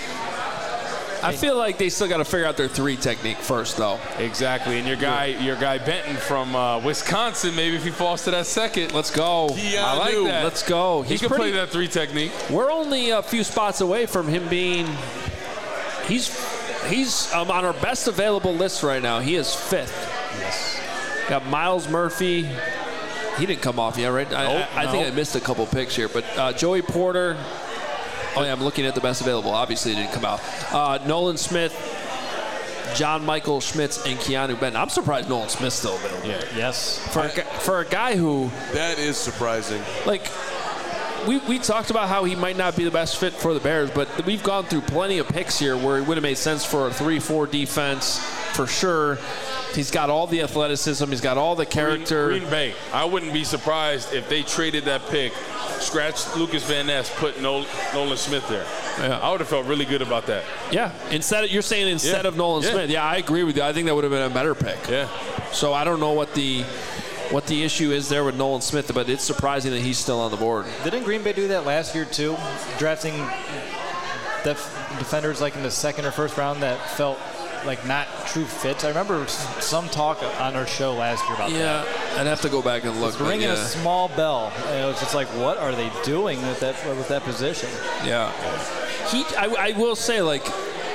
I feel like they still got to figure out their 3 technique first, though. Exactly. And your guy Benton from Wisconsin, maybe if he falls to that second. Let's go. I like that. Let's go. He can play that 3 technique. We're only a few spots away from him being he's on our best available list right now. He is 5th. Yes. Got Myles Murphy. He didn't come off yet, right? I think I missed a couple picks here. But Joey Porter. Oh, yeah, I'm looking at the best available. Obviously, it didn't come out. Nolan Smith, John Michael Schmitz, and Keanu Benton. I'm surprised Nolan Smith's still available. Yeah. Yes. For a guy who... That is surprising. Like, we talked about how he might not be the best fit for the Bears, but we've gone through plenty of picks here where it would have made sense for a 3-4 defense for sure. He's got all the athleticism. He's got all the character. Green Bay. I wouldn't be surprised if they traded that pick, scratched Lucas Van Ness, put Nolan Smith there. Yeah. I would have felt really good about that. Yeah. You're saying instead of Nolan Smith. Yeah, I agree with you. I think that would have been a better pick. Yeah. So I don't know what the issue is there with Nolan Smith, but it's surprising that he's still on the board. Didn't Green Bay do that last year too? Drafting defenders like in the second or first round that felt like not true fits. I remember some talk on our show last year about that. Yeah, I'd have to go back and look. It's ringing a small bell. It was just like, what are they doing with that position? Yeah. I will say, like,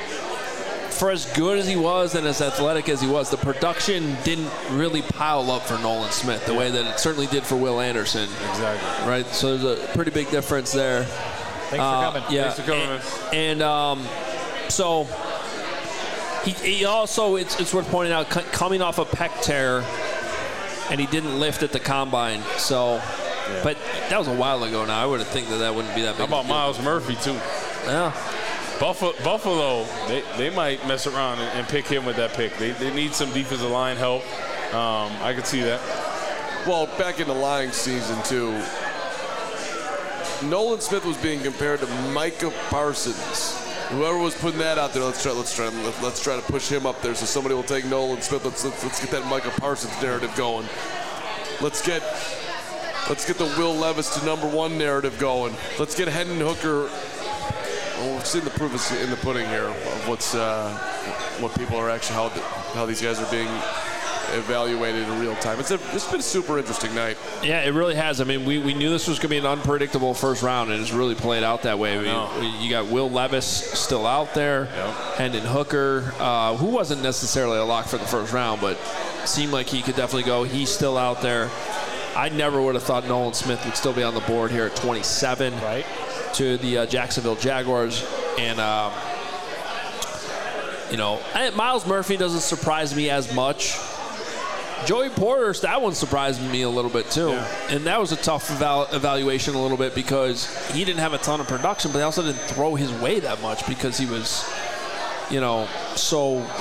for as good as he was and as athletic as he was, the production didn't really pile up for Nolan Smith the way that it certainly did for Will Anderson. Exactly. Right? So there's a pretty big difference there. Thanks for coming. Yeah. Thanks for coming. And so he also, it's worth pointing out, coming off a pec tear, and he didn't lift at the combine. So, but that was a while ago now. I would think that wouldn't be that big. How about Myles Murphy, too? Yeah. Buffalo, they might mess around and pick him with that pick. They need some defensive line help. I could see that. Well, back in the lying season, too, Nolan Smith was being compared to Micah Parsons. Whoever was putting that out there, let's try to push him up there so somebody will take Nolan Smith. Let's get that Micah Parsons narrative going. Let's get the Will Levis to #1 narrative going. Let's get Hendon Hooker. Well, we've seen the proof is in the pudding here of what people are actually how these guys are being evaluated in real time. It's been a super interesting night. Yeah, it really has. I mean, we knew this was going to be an unpredictable first round, and it's really played out that way. I mean, you got Will Levis still out there, Hendon Hooker, who wasn't necessarily a lock for the first round, but seemed like he could definitely go. He's still out there. I never would have thought Nolan Smith would still be on the board here at 27 to the Jacksonville Jaguars. And, Myles Murphy doesn't surprise me as much. Joey Porter, that one surprised me a little bit too. Yeah. And that was a tough evaluation a little bit because he didn't have a ton of production, but he also didn't throw his way that much because he was, so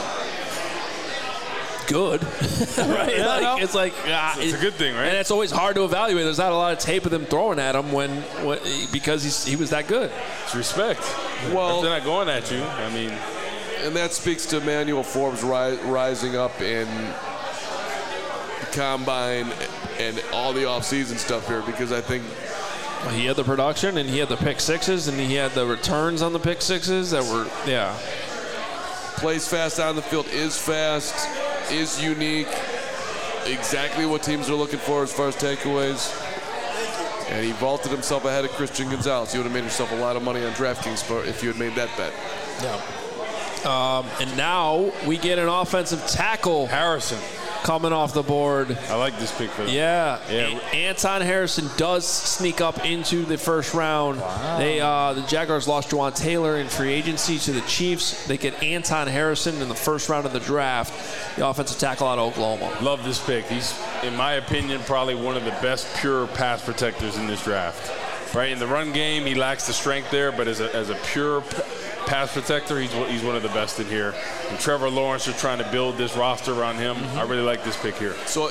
good. Right? Yeah, it's like it's a good thing, right? And it's always hard to evaluate. There's not a lot of tape of them throwing at him because he was that good. It's respect. Well, if they're not going at you, I mean. And that speaks to Emmanuel Forbes rising up in the combine and all the offseason stuff here, because I think he had the production and he had the pick sixes and he had the returns on the pick sixes that were, plays fast on the field, is fast, is unique, exactly what teams are looking for as far as takeaways. And he vaulted himself ahead of Christian Gonzalez. You would have made yourself a lot of money on DraftKings if you had made that bet. Yeah. And now we get an offensive tackle. Harrison. Coming off the board. I like this pick for them. Yeah. Anton Harrison does sneak up into the first round. Wow. The Jaguars lost Juwan Taylor in free agency to the Chiefs. They get Anton Harrison in the first round of the draft, the offensive tackle out of Oklahoma. Love this pick. He's, in my opinion, probably one of the best pure pass protectors in this draft. Right, in the run game, he lacks the strength there, but as a pure pass protector, he's one of the best in here. And Trevor Lawrence is trying to build this roster around him. I really like this pick here. So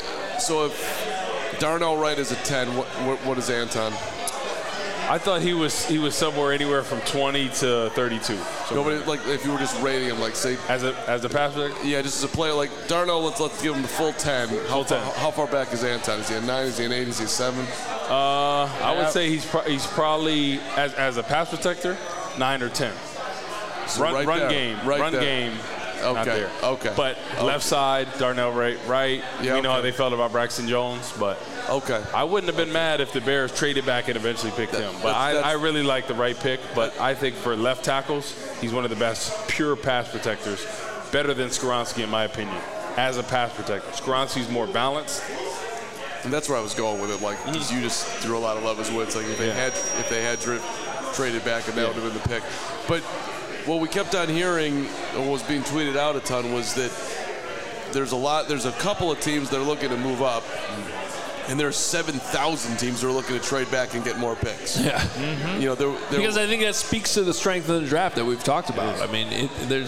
if Darnell Wright is a 10, what is Anton? I thought he was somewhere anywhere from 20 to 32. No, but like if you were just rating him, like say as a pass protector. Yeah, just as a player, like Darnell. Let's give him the full 10. How far back is Anton? Is he a 9? Is he an 8? Is he a 7? I would say he's probably as a pass protector 9 or 10. So run game. Okay. Not there. Okay. But left side, Darnell Wright. Yeah, we know how they felt about Braxton Jones, but I wouldn't have been mad if the Bears traded back and eventually picked him. But I really like the right pick. But I think for left tackles, he's one of the best pure pass protectors, better than Skoronski in my opinion, as a pass protector. Skoronski's more balanced. And that's where I was going with it. Like, because you just threw a lot of love as woods. Like if they had traded back, and that would have been the pick. But what we kept on hearing, and what was being tweeted out a ton, was that there's a couple of teams that are looking to move up, and there's 7,000 teams that are looking to trade back and get more picks. Yeah. Mm-hmm. You know, because I think that speaks to the strength of the draft that we've talked about. I mean,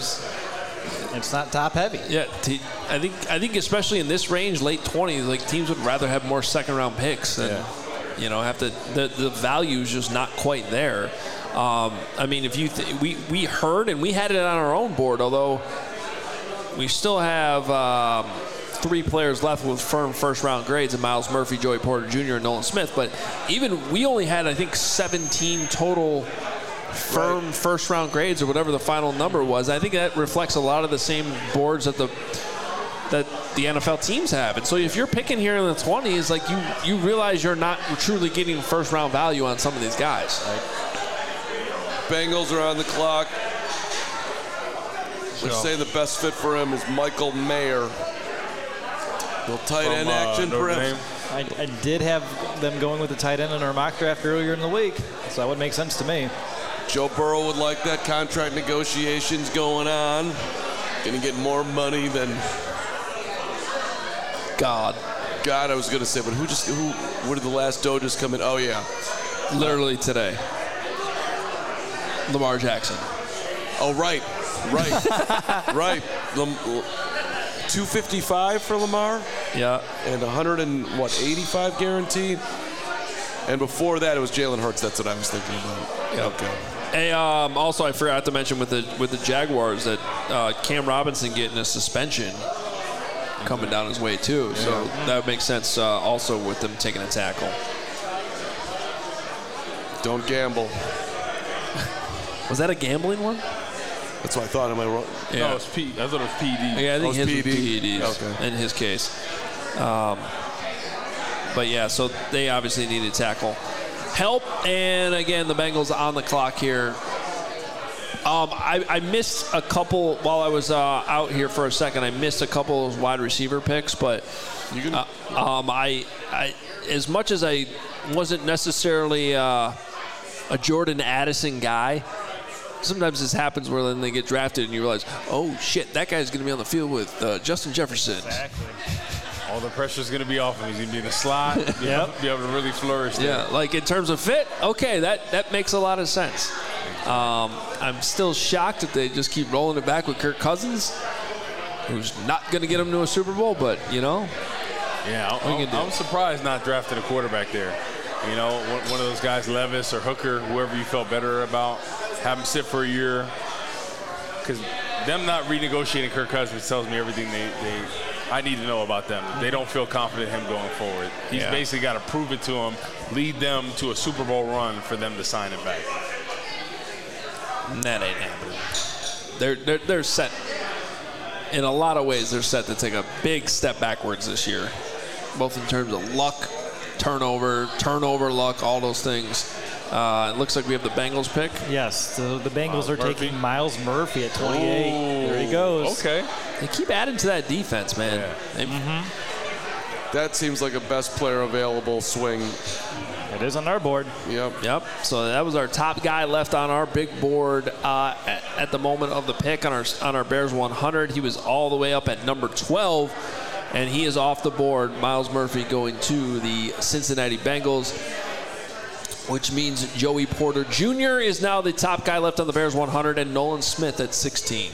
it's not top heavy. Yeah, I think especially in this range, late 20s, like teams would rather have more second round picks than have the value is just not quite there. I mean, if you we heard and we had it on our own board, although we still have 3 players left with firm first round grades: and Miles Murphy, Joey Porter Jr., and Nolan Smith. But even we only had, I think, 17 total firm first round grades, or whatever the final number was. I think that reflects a lot of the same boards that the NFL teams have. And so if you're picking here in the 20s, like you realize you're not truly getting first round value on some of these guys. Right? Bengals are on the clock. They're saying the best fit for him is Michael Mayer. Little tight end action for him. I did have them going with the tight end in our mock draft earlier in the week, so that would make sense to me. Joe Burrow would like that. Contract negotiations going on. Going to get more money than God, I was going to say, but where did the last dough just come in? Oh, yeah. Literally today. Lamar Jackson. Oh, right. 255 for Lamar. Yeah. And 85 guaranteed. And before that, it was Jalen Hurts. That's what I was thinking about. Yeah. Okay. Hey, also, I forgot to mention with the Jaguars that Cam Robinson getting a suspension coming down his way too. So that would make sense also with them taking a tackle. Don't gamble. Was that a gambling one? That's what I thought. Am I wrong? Yeah. No, I thought it was PD. Yeah, I think his PD. was PEDs in his case. But yeah, so they obviously need a tackle. Help, and again, the Bengals on the clock here. I missed a couple while I was out here for a second. I missed a couple of wide receiver picks, but I as much as I wasn't necessarily a Jordan Addison guy, sometimes this happens where then they get drafted and you realize, oh shit, that guy's going to be on the field with Justin Jefferson. Exactly. All the pressure's going to be off him. He's going to be in the slot. Be able to really flourish there. Yeah, like in terms of fit, okay, that makes a lot of sense. I'm still shocked that they just keep rolling it back with Kirk Cousins, who's not going to get him to a Super Bowl, but, Yeah, I'm surprised not drafting a quarterback there. You know, one of those guys, Levis or Hooker, whoever you felt better about, have him sit for a year. Because them not renegotiating Kirk Cousins tells me everything I need to know about them. They don't feel confident in him going forward. He's basically got to prove it to them, lead them to a Super Bowl run for them to sign him back. That ain't happening. They're set. In a lot of ways, they're set to take a big step backwards this year, both in terms of luck, turnover luck, all those things. It looks like we have the Bengals pick. Yes, so the Bengals are taking Myles Murphy at 28. There he goes. Okay. They keep adding to that defense, man. Yeah. That seems like a best player available swing. It is on our board. Yep. So that was our top guy left on our big board at the moment of the pick on our Bears 100. He was all the way up at number 12, and he is off the board. Myles Murphy going to the Cincinnati Bengals, which means Joey Porter Jr. is now the top guy left on the Bears 100, and Nolan Smith at 16.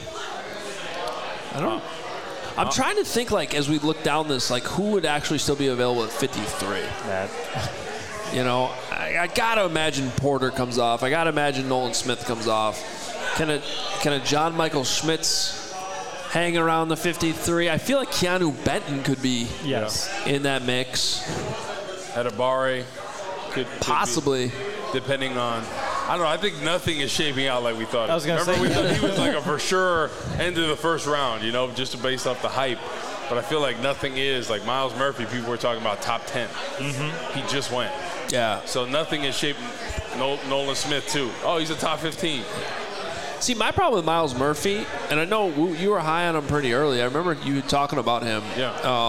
I'm trying to think, like, as we look down this, like, who would actually still be available at 53? You know, I got to imagine Porter comes off. I got to imagine Nolan Smith comes off. Can a John Michael Schmitz hang around the 53? I feel like Keanu Benton could be in that mix. Adibare could possibly. Be, depending on, I don't know, I think nothing is shaping out like we thought. I was going to say. We thought he was like a for sure end of the first round, you know, just based off the hype. But I feel like nothing is. Like Myles Murphy, people were talking about top 10. He just went. Yeah. So nothing is shaping. Nolan Smith, too. Oh, he's a top 15. See, my problem with Myles Murphy, and I know you were high on him pretty early. I remember you talking about him. Yeah.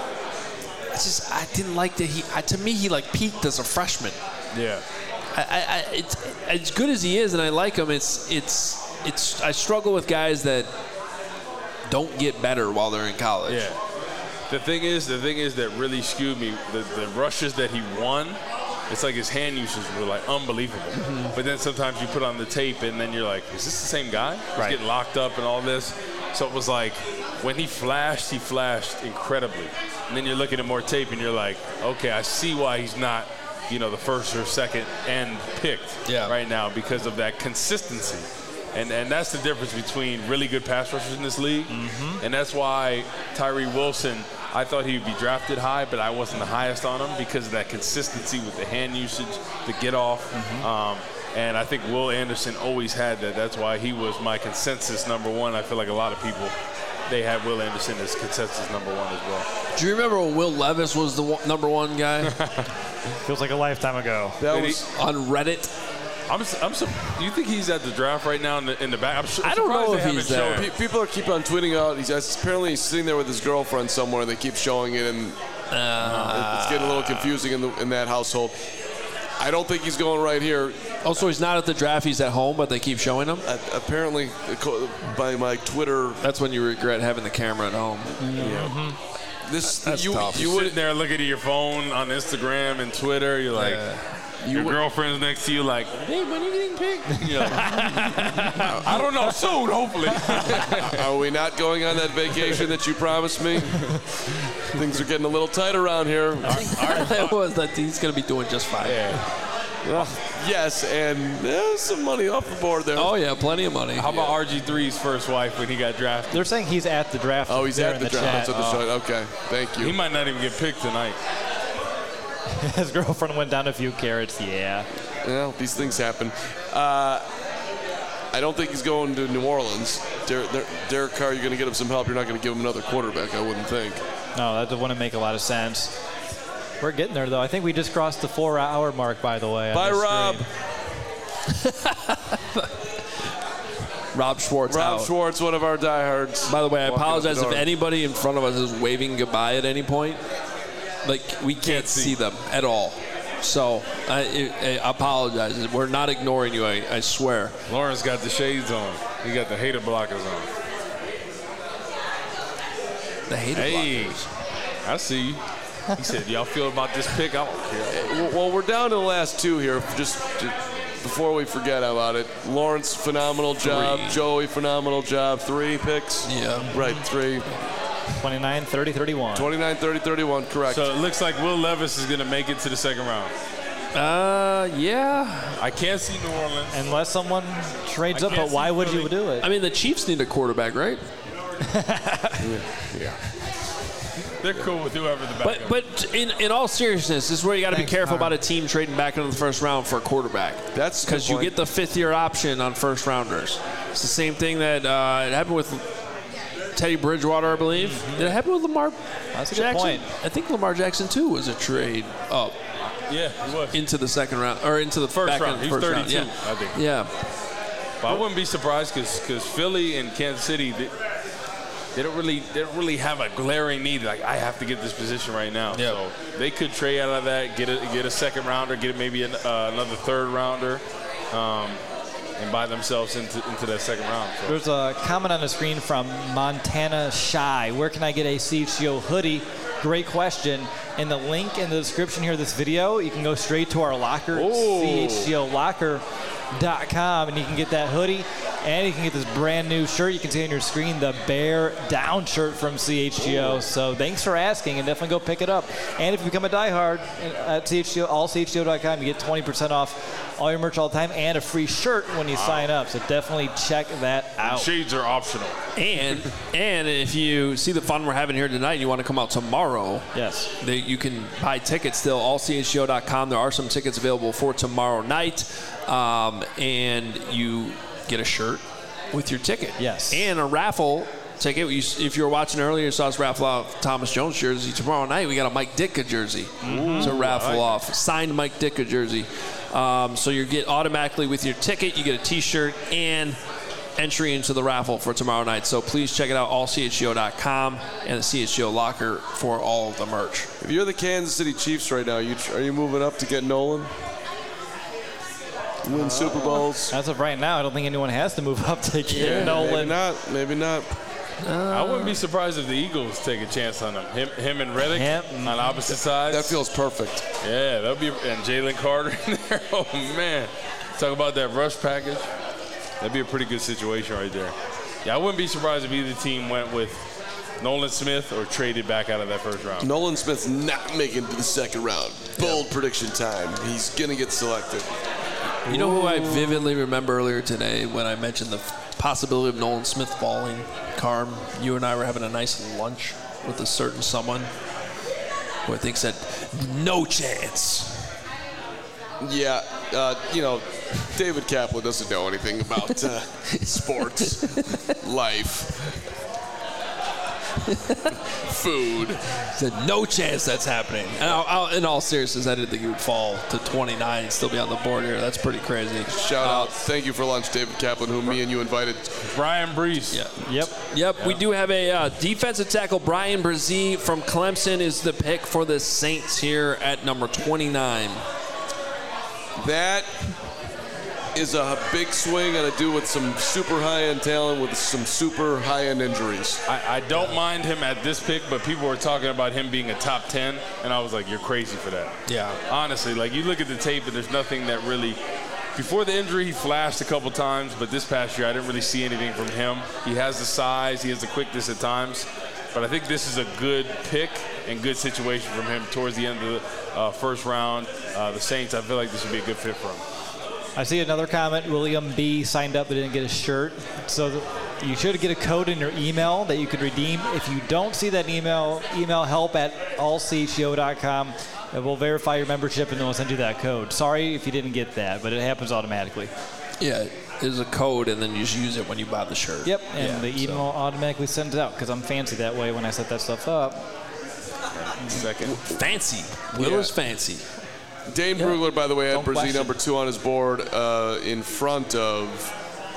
I didn't like that to me, he like peaked as a freshman. Yeah. It's as good as he is, and I like him. I struggle with guys that don't get better while they're in college. Yeah. The thing is that really skewed me. The rushes that he won, it's like his hand usage were like unbelievable. But then sometimes you put on the tape and then you're like, is this the same guy? He's getting locked up and all this. So it was like when he flashed incredibly. And then you're looking at more tape and you're like, okay, I see why he's not, you know, the first or second end picked right now because of that consistency. And that's the difference between really good pass rushers in this league. And that's why Tyree Wilson, I thought he would be drafted high, but I wasn't the highest on him because of that consistency with the hand usage, the get off. And I think Will Anderson always had that. That's why he was my consensus number one. I feel like a lot of people, they had Will Anderson as consensus number one as well. Do you remember when Will Levis was the number one guy? Feels like a lifetime ago. That was on Reddit. You think he's at the draft right now in the back? I don't know if he's there. People keep on tweeting out. He's apparently sitting there with his girlfriend somewhere, and they keep showing it, and it's getting a little confusing in that household. I don't think he's going right here. Oh, so he's not at the draft. He's at home, but they keep showing him? Apparently, by my Twitter. That's when you regret having the camera at home. That's tough. You sitting there looking at your phone on Instagram and Twitter. You're like, your girlfriend's next to you like, hey, when are you getting picked? You're like, I don't know, soon, hopefully. Are we not going on that vacation that you promised me? Things are getting a little tight around here. It was that he's going to be doing just fine. Yes, and there's some money off the board there. Oh, yeah, plenty of money. How about RG3's first wife when he got drafted? They're saying he's at the draft. Oh, he's at the draft. Okay, thank you. He might not even get picked tonight. His girlfriend went down a few carats, Well, these things happen. I don't think he's going to New Orleans. Derek Carr, you're going to get him some help. You're not going to give him another quarterback, I wouldn't think. No, that wouldn't make a lot of sense. We're getting there, though. I think we just crossed the 4-hour mark, by the way. Bye, Rob. Rob Schwartz. Rob Schwartz, one of our diehards. By the way, I apologize if anybody in front of us is waving goodbye at any point. Like, we can't see them at all. So, I apologize. We're not ignoring you, I swear. Lawrence got the shades on. He got the hater blockers on. The hater blockers. I see you. He said, y'all feel about this pick? I don't care. Well, we're down to the last two here. Just before we forget about it. Lawrence, phenomenal job. 3. Joey, phenomenal job. 3 picks. Yeah. Right, 3. 29, 30, 31. 29, 30, 31, correct. So it looks like Will Levis is going to make it to the second round. Yeah. I can't see New Orleans. Unless someone trades up, but why would you do it? I mean, the Chiefs need a quarterback, right? Yeah. They're cool with whoever the backup. But in all seriousness, this is where you got to be careful about a team trading back into the first round for a quarterback. That's because you get the fifth-year option on first rounders. It's the same thing that it happened with Teddy Bridgewater, I believe. Did it happen with Lamar That's a Jackson? good point. I think Lamar Jackson too was a trade up. Yeah, he was. Into the second round or into the First back round. He's first 32, round. Yeah. I think. Yeah. But I wouldn't be surprised because Philly and Kansas City, they don't really have a glaring need. Like, I have to get this position right now. Yeah. So they could trade out of that, get a second rounder, get maybe another third rounder, and buy themselves into that second round. So. There's a comment on the screen from Montana Shy. Where can I get a CHGO hoodie? Great question. In the link in the description here of this video, you can go straight to our locker, chgolocker.com, and you can get that hoodie. And you can get this brand new shirt you can see on your screen, the Bear Down shirt from CHGO. So thanks for asking, and definitely go pick it up. And if you become a diehard at CHGO, allchgo.com, you get 20% off all your merch all the time and a free shirt when you sign up. So definitely check that out. Shades are optional. And if you see the fun we're having here tonight and you want to come out tomorrow, yes, you can buy tickets still, allchgo.com. There are some tickets available for tomorrow night. And you get a shirt with your ticket. Yes. And a raffle ticket. If you were watching earlier, you saw us raffle off Thomas Jones jersey. Tomorrow night, we got a Mike Ditka jersey to raffle off. Signed Mike Ditka jersey. So you get automatically with your ticket, you get a T-shirt and entry into the raffle for tomorrow night. So please check it out, allchgo.com and the CHGO locker for all of the merch. If you're the Kansas City Chiefs right now, are you moving up to get Nolan? Win Super Bowls? As of right now, I don't think anyone has to move up to get Nolan. Maybe not. I wouldn't be surprised if the Eagles take a chance on him. Him and Reddick on opposite sides. That feels perfect. Yeah, that'll be, and Jalen Carter in there. Oh man, talk about that rush package. That'd be a pretty good situation right there. Yeah, I wouldn't be surprised if either team went with Nolan Smith or traded back out of that first round. Nolan Smith's not making it to the second round. Bold prediction time. He's gonna get selected. You know who I vividly remember earlier today when I mentioned the possibility of Nolan Smith falling? Carm, you and I were having a nice lunch with a certain someone who I think said, no chance. Yeah, David Kaplan doesn't know anything about sports, life, food. Said no chance that's happening. And in all seriousness, I didn't think he would fall to 29 and still be on the board here. That's pretty crazy. Shout out. Thank you for lunch, David Kaplan, who me and you invited. Brian Brees. Yeah. Yep. We do have a defensive tackle. Brian Brzee from Clemson is the pick for the Saints here at number 29. That is a big swing and to do with some super high-end talent with some super high-end injuries. I don't mind him at this pick, but people were talking about him being a top 10, and I was like, you're crazy for that. Yeah. Honestly, like, you look at the tape, and there's nothing that really – before the injury, he flashed a couple times, but this past year, I didn't really see anything from him. He has the size. He has the quickness at times. But I think this is a good pick and good situation from him towards the end of the first round. The Saints, I feel like this would be a good fit for him. I see another comment. William B. signed up but didn't get a shirt. So you should get a code in your email that you could redeem. If you don't see that email help@allchgo.com. And we'll verify your membership and then we'll send you that code. Sorry if you didn't get that, but it happens automatically. Yeah, there's a code and then you just use it when you buy the shirt. Yep, and the email automatically sends it out because I'm fancy that way when I set that stuff up. Second. Fancy. Will is fancy. Dane Brugler, by the way, had Don't Brzee question. number 2 on his board in front of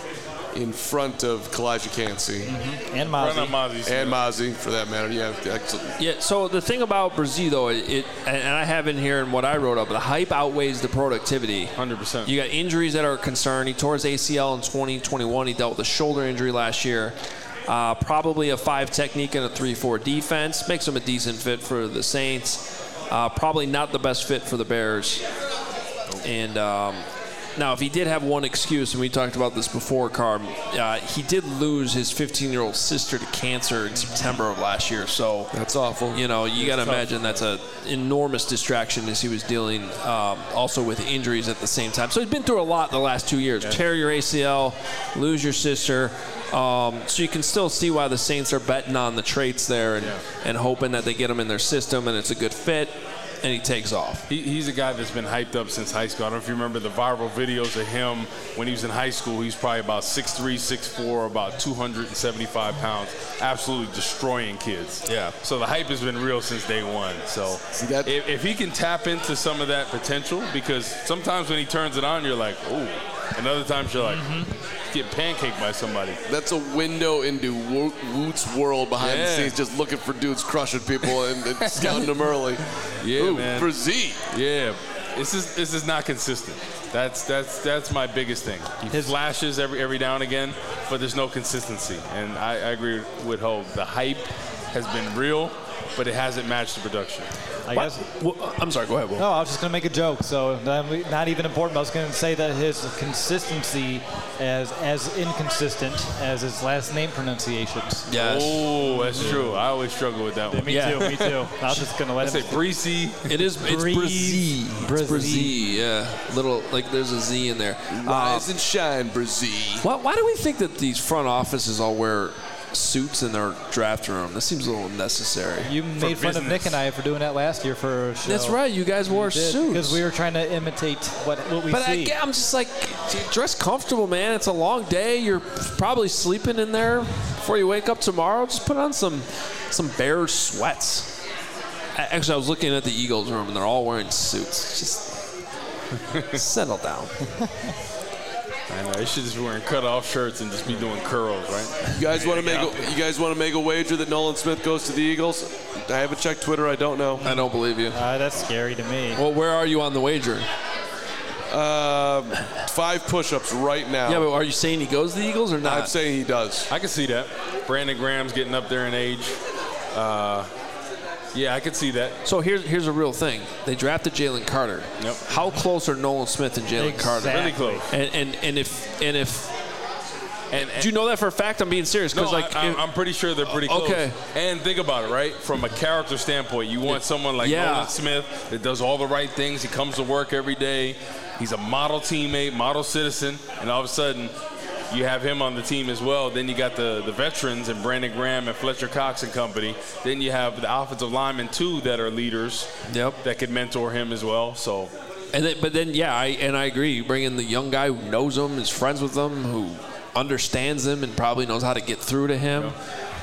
Kalijah Cansey. And Mozzie. And Mozzie, for that matter. Yeah, excellent. Yeah, so the thing about Brzee, though, and I have in here in what I wrote up, the hype outweighs the productivity. 100%. You got injuries that are a concern. He tore his ACL in 2021. He dealt with a shoulder injury last year. Probably a 5 technique and a 3-4 defense. Makes him a decent fit for the Saints. Probably not the best fit for the Bears. And Now, if he did have one excuse, and we talked about this before, Carm, he did lose his 15-year-old sister to cancer in September of last year. So that's awful. You know, you got to imagine that's an enormous distraction as he was dealing also with injuries at the same time. So he's been through a lot the last 2 years. Yeah. Tear your ACL, lose your sister. So you can still see why the Saints are betting on the traits there and hoping that they get him in their system and it's a good fit. And he takes off. He's a guy that's been hyped up since high school. I don't know if you remember the viral videos of him when he was in high school. He was probably about 6'3", 6'4", about 275 pounds, absolutely destroying kids. Yeah. So the hype has been real since day one. So if he can tap into some of that potential, because sometimes when he turns it on, you're like, ooh. And other times you're like, get pancaked by somebody. That's a window into Woot's world behind the scenes, just looking for dudes crushing people and scouting them early. Yeah, man. For Z. Yeah. This is not consistent. That's my biggest thing. He flashes every now and again, but there's no consistency. And I agree with Ho. The hype has been real, but it hasn't matched the production. I guess. I'm sorry, go ahead, Will. No, I was just going to make a joke, so not even important. I was going to say that his consistency is as inconsistent as his last name pronunciations. Yes. Oh, that's true. I always struggle with that one. Me too. I was just going to let him say Breezy. It's Brzee. Brzee, yeah. Little, like there's a Z in there. Rise and shine, Brzee. Why do we think that these front offices all wear suits in their draft room? This seems a little unnecessary. You made fun of Nick and I for doing that last year for a show. That's right. You guys wore suits because we were trying to imitate what we see. But I'm just like, dress comfortable, man. It's a long day. You're probably sleeping in there before you wake up tomorrow. Just put on some Bears sweats. Actually, I was looking at the Eagles room and they're all wearing suits. Just settle down. I know, they should just be wearing cut-off shirts and just be doing curls, right? You guys want to make a wager that Nolan Smith goes to the Eagles? I haven't checked Twitter. I don't know. I don't believe you. That's scary to me. Well, where are you on the wager? 5 push-ups right now. Yeah, but are you saying he goes to the Eagles or not? I'm saying he does. I can see that. Brandon Graham's getting up there in age. Yeah, I could see that. So here's a real thing. They drafted Jalen Carter. Yep. How close are Nolan Smith and Jalen Carter? Really close. And if do you know that for a fact? I'm being serious. No, I'm pretty sure they're pretty close. Okay. And think about it, right? From a character standpoint, you want someone like Nolan Smith that does all the right things. He comes to work every day. He's a model teammate, model citizen, and all of a sudden you have him on the team as well. Then you got the veterans and Brandon Graham and Fletcher Cox and company. Then you have the offensive linemen, too, that are leaders that could mentor him as well. So, but then I agree. You bring in the young guy who knows him, is friends with him, who understands him and probably knows how to get through to him.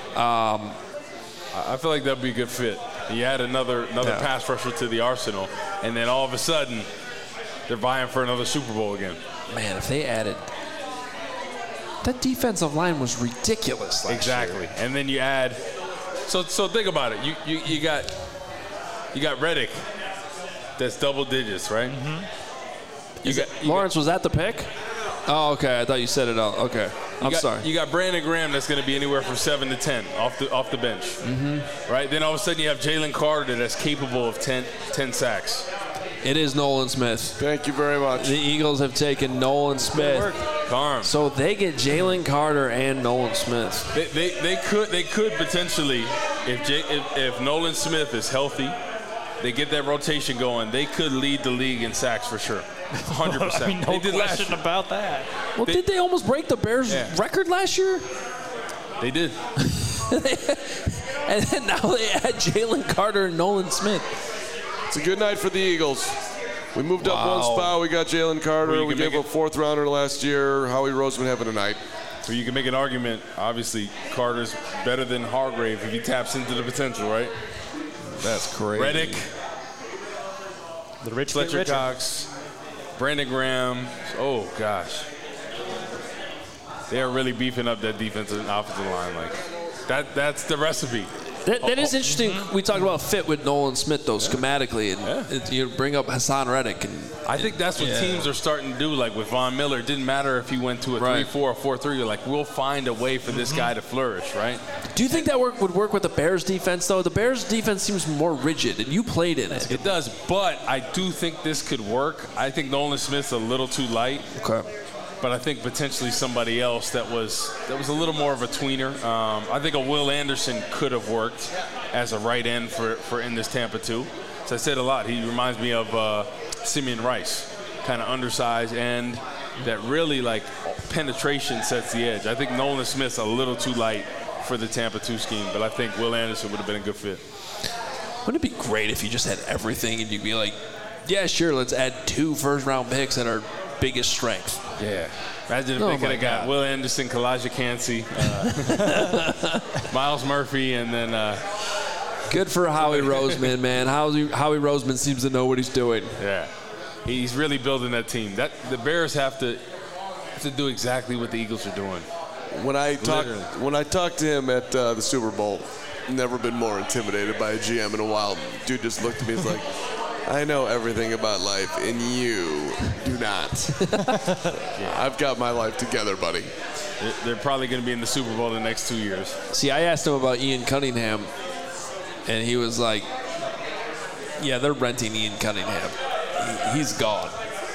I feel like that would be a good fit. You add another pass rusher to the arsenal, and then all of a sudden they're vying for another Super Bowl again. Man, if they added – that defensive line was ridiculous last year. And then you add so think about it. You got Reddick that's double digits, right? Mm-hmm. Lawrence, was that the pick? Oh, okay. I thought you said it all. Okay. I'm sorry. You got Brandon Graham that's going to be anywhere from 7 to 10 off the bench. Mm-hmm. Right? Then all of a sudden you have Jalen Carter that's capable of 10 sacks. It is Nolan Smith. Thank you very much. The Eagles have taken Nolan Smith. So they get Jalen Carter and Nolan Smith. They could potentially, if Nolan Smith is healthy, they get that rotation going, they could lead the league in sacks for sure. 100%. I mean, no question about that. Well, did they almost break the Bears record last year? They did. And then now they add Jalen Carter and Nolan Smith. It's a good night for the Eagles. We moved up one spot. We got Jalen Carter. We gave a 4th rounder last year. Howie Roseman having a night. So you can make an argument. Obviously, Carter's better than Hargrave if he taps into the potential, right? That's crazy. Reddick, the rich Fletcher Cox, Brandon Graham. Oh gosh, they are really beefing up that defensive and offensive line. Like that's the recipe. That is interesting. We talked about fit with Nolan Smith, though, schematically. And you bring up Hassan Reddick. And I think that's what teams are starting to do. Like with Von Miller, it didn't matter if he went to a 3-4 or 4-3. You're like, we'll find a way for this guy to flourish, right? Do you think that would work with the Bears defense, though? The Bears defense seems more rigid, and you played in it. It does, but I do think this could work. I think Nolan Smith's a little too light. Okay. But I think potentially somebody else that was a little more of a tweener. I think a Will Anderson could have worked as a right end for in this Tampa too. So I said a lot. He reminds me of Simeon Rice, kind of undersized end that really like penetration sets the edge. I think Nolan Smith's a little too light for the Tampa 2 scheme, but I think Will Anderson would have been a good fit. Wouldn't it be great if you just had everything and you'd be like, yeah, sure, let's add 2 first-round picks that are biggest strength. Yeah. Imagine if they could have got Will Anderson, Kalijah Cansey, Miles Murphy, and then good for Howie Roseman, man. Howie Roseman seems to know what he's doing. Yeah. He's really building that team. The Bears have to do exactly what the Eagles are doing. When I talked to him at the Super Bowl, never been more intimidated by a GM in a while. Dude just looked at me and was like, I know everything about life, and you do not. I've got my life together, buddy. They're probably going to be in the Super Bowl the next 2 years. See, I asked him about Ian Cunningham, and he was like, yeah, they're renting Ian Cunningham. He's gone.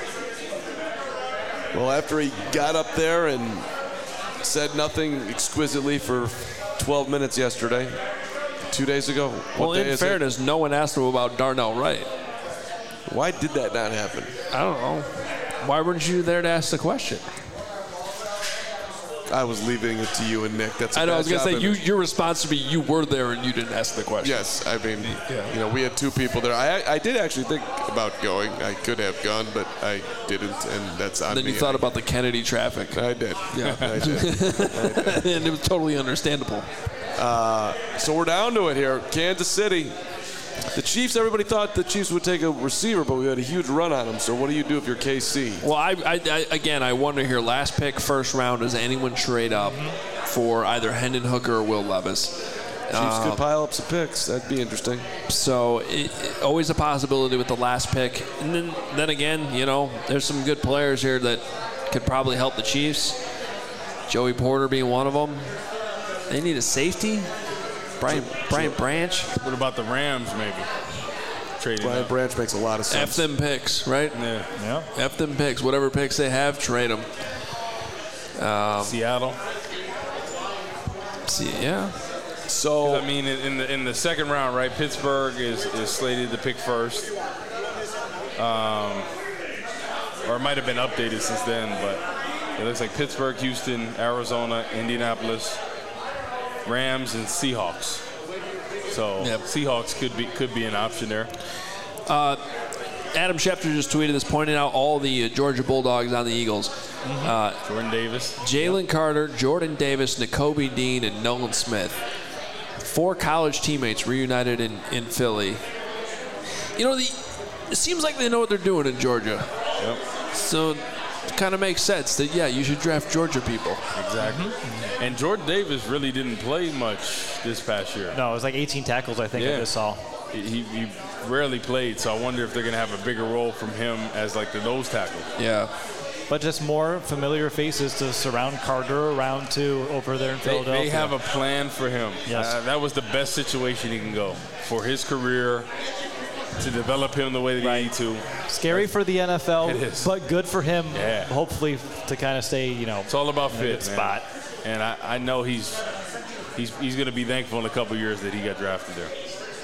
Well, after he got up there and said nothing exquisitely for 12 minutes yesterday, 2 days ago. Well, in fairness, no one asked him about Darnell Wright. Why did that not happen? I don't know. Why weren't you there to ask the question? I was leaving it to you and Nick. I know. I was going to say, your response would be you were there and you didn't ask the question. Yes. I mean, we had 2 people there. I did actually think about going. I could have gone, but I didn't, and that's on me. Then you thought about the Kennedy traffic. I did. Yeah. I did. And it was totally understandable. So we're down to it here. Kansas City. The Chiefs, everybody thought the Chiefs would take a receiver, but we had a huge run on them. So what do you do if you're KC? Well, I wonder here, last pick, first round, does anyone trade up for either Hendon Hooker or Will Levis? Chiefs could pile up some picks. That'd be interesting. So always a possibility with the last pick. And then again, there's some good players here that could probably help the Chiefs. Joey Porter being one of them. They need a safety. Brian Branch. What about the Rams, maybe? Brian Branch makes a lot of sense. F them picks, right? Yeah. F them picks. Whatever picks they have, trade them. Seattle. Yeah. So I mean, in the second round, right? Pittsburgh is slated to pick first. Or it might have been updated since then, but it looks like Pittsburgh, Houston, Arizona, Indianapolis, Rams, and Seahawks. So Seahawks could be an option there. Adam Schefter just tweeted this, pointing out all the Georgia Bulldogs on the Eagles. Jordan Davis. Jalen Carter, Jordan Davis, Nakobe Dean, and Nolan Smith. 4 college teammates reunited in Philly. It seems like they know what they're doing in Georgia. Yep. So it kind of makes sense that, you should draft Georgia people. Exactly. And Jordan Davis really didn't play much this past year. No, it was like 18 tackles, I think, I just saw. He rarely played, so I wonder if they're going to have a bigger role from him as like the nose tackle. Yeah. But just more familiar faces to surround Carter around to over there in Philadelphia. They have a plan for him. Yes. That was the best situation he can go for his career, to develop him the way that he needs to. Scary for the NFL, it is. But good for him, hopefully, to kind of stay, It's all about fit, good spot. And I know he's going to be thankful in a couple years that he got drafted there.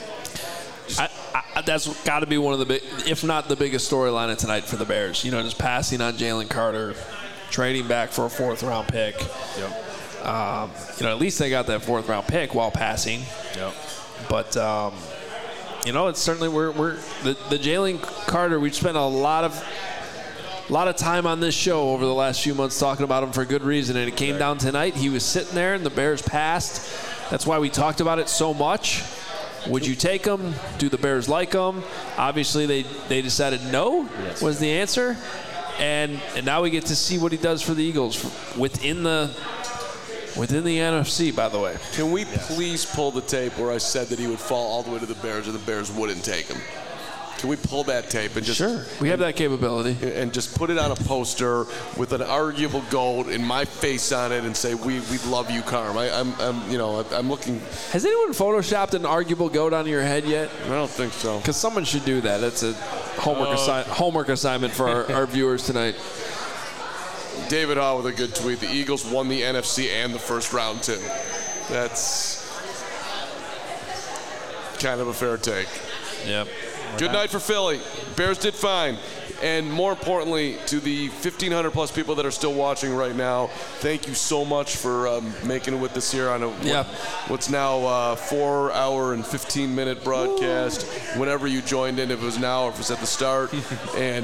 That's got to be one of the big, if not the biggest storyline of tonight for the Bears. Just passing on Jalen Carter, trading back for a 4th-round pick. Yep. At least they got that 4th-round pick while passing. Yep. But it's certainly we're the Jalen Carter. We've spent a lot of time on this show over the last few months talking about him for good reason, and it came down tonight. He was sitting there, and the Bears passed. That's why we talked about it so much. Would you take him? Do the Bears like him? Obviously, they decided no was the answer, and now we get to see what he does for the Eagles within the Within the NFC, by the way. Can we please pull the tape where I said that he would fall all the way to the Bears and the Bears wouldn't take him? Can we pull that tape and just Sure, we have that capability. And just put it on a poster with an arguable GOAT and my face on it and say we love you, Carm. I'm looking. Has anyone photoshopped an arguable GOAT on your head yet? I don't think so. Because someone should do that. That's a homework assignment for our viewers tonight. David Hall with a good tweet. The Eagles won the NFC and the first round too. That's kind of a fair take. Yep. Good night for Philly. Bears did fine. And more importantly, to the 1,500 plus people that are still watching right now, thank you so much for making it with us here on what's now a 4 hour and 15 minute broadcast. Whenever you joined in, if it was now or if it was at the start. And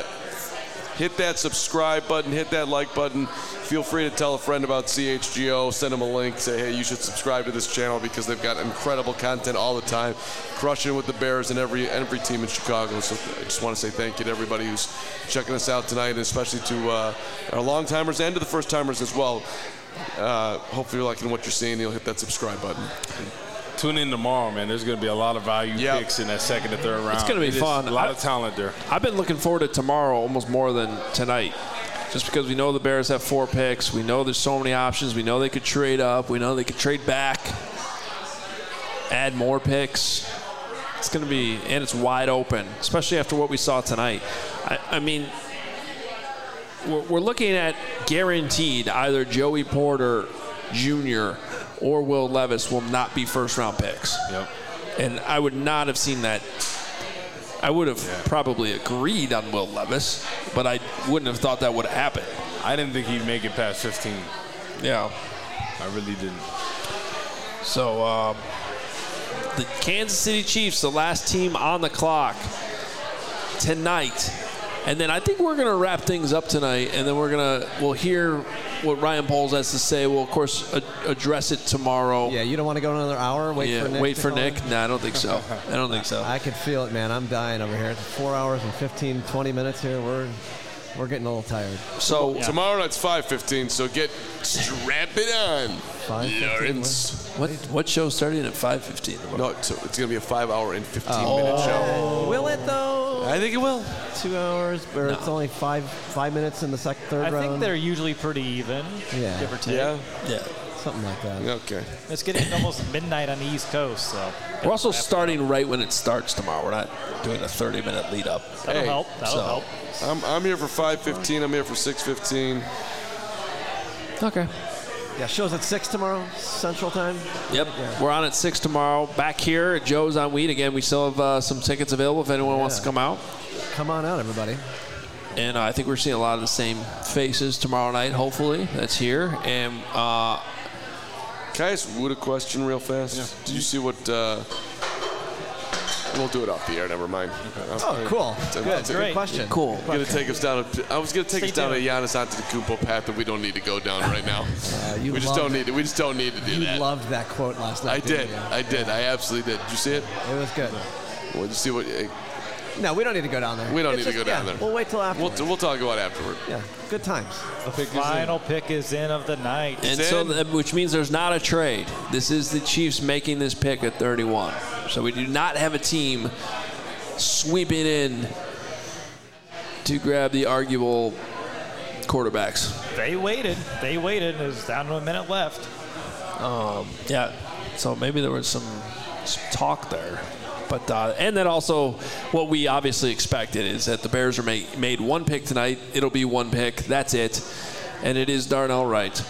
hit that subscribe button, hit that like button. Feel free to tell a friend about CHGO, send them a link, say, hey, you should subscribe to this channel because they've got incredible content all the time, crushing with the Bears and every team in Chicago. So I just want to say thank you to everybody who's checking us out tonight, and especially to our long-timers and to the first-timers as well. Hopefully you're liking what you're seeing. You'll hit that subscribe button. Tune in tomorrow, man. There's going to be a lot of value picks in that second and third round. It's going to be fun. A lot of talent there. I've been looking forward to tomorrow almost more than tonight, just because we know the Bears have 4 picks. We know there's so many options. We know they could trade up. We know they could trade back, add more picks. It's going to be, and it's wide open, especially after what we saw tonight. I mean, we're looking at guaranteed either Joey Porter Jr. or Will Levis will not be first-round picks. Yep. And I would not have seen that. I would have probably agreed on Will Levis, but I wouldn't have thought that would have happened. I didn't think he'd make it past 15. Yeah. I really didn't. So the Kansas City Chiefs, the last team on the clock tonight. And then I think we're going to wrap things up tonight, and then we'll hear what Ryan Poles has to say. We'll, of course, address it tomorrow. Yeah, you don't want to go another hour? Wait for Nick? No, I don't think so. I don't think so. I can feel it, man. I'm dying over here. It's 4 hours and 15, 20 minutes here. We're getting a little tired. So tomorrow night's 5:15, so strap it on, 5:15, Lawrence. What show's starting at 5:15? No, it's going to be a 5 hour and 15-minute show. Will it, though? I think it will. 2 hours, or it's only five minutes in the third round? I think they're usually pretty even, give or take. Yeah. Something like that. Okay. It's getting almost midnight on the East Coast, so. We're also starting right when it starts tomorrow. We're not doing a 30-minute lead up. That'll help. That'll help. I'm here for 5:15. I'm here for 6:15. Okay. Yeah, show's at 6 tomorrow, Central Time. Yep. Yeah. We're on at 6 tomorrow. Back here at Joe's on Weed. Again, we still have some tickets available if anyone wants to come out. Come on out, everybody. And I think we're seeing a lot of the same faces tomorrow night, hopefully. That's here. And can I ask Wood a question real fast? Yeah. Did you see what... We'll do it off the air. Never mind. Okay. Oh, cool. Good question. Cool. I was going to take us down a Giannis Antetokounmpo path that we don't need to go down right now. We just don't need to do that. You loved that quote last night. I did. I absolutely did. Did you see it? It was good. Well, you see what? No, we don't need to go down there. We don't need to go down there. We'll wait till afterward. We'll talk about it afterward. Yeah, good times. The final pick is in of the night. And so, which means there's not a trade. This is the Chiefs making this pick at 31. So we do not have a team sweeping in to grab the arguable quarterbacks. They waited. It was down to a minute left. Yeah. So maybe there was some talk there. But and then also what we obviously expected is that the Bears are made one pick tonight. It'll be one pick. That's it. And it is Darnell Wright.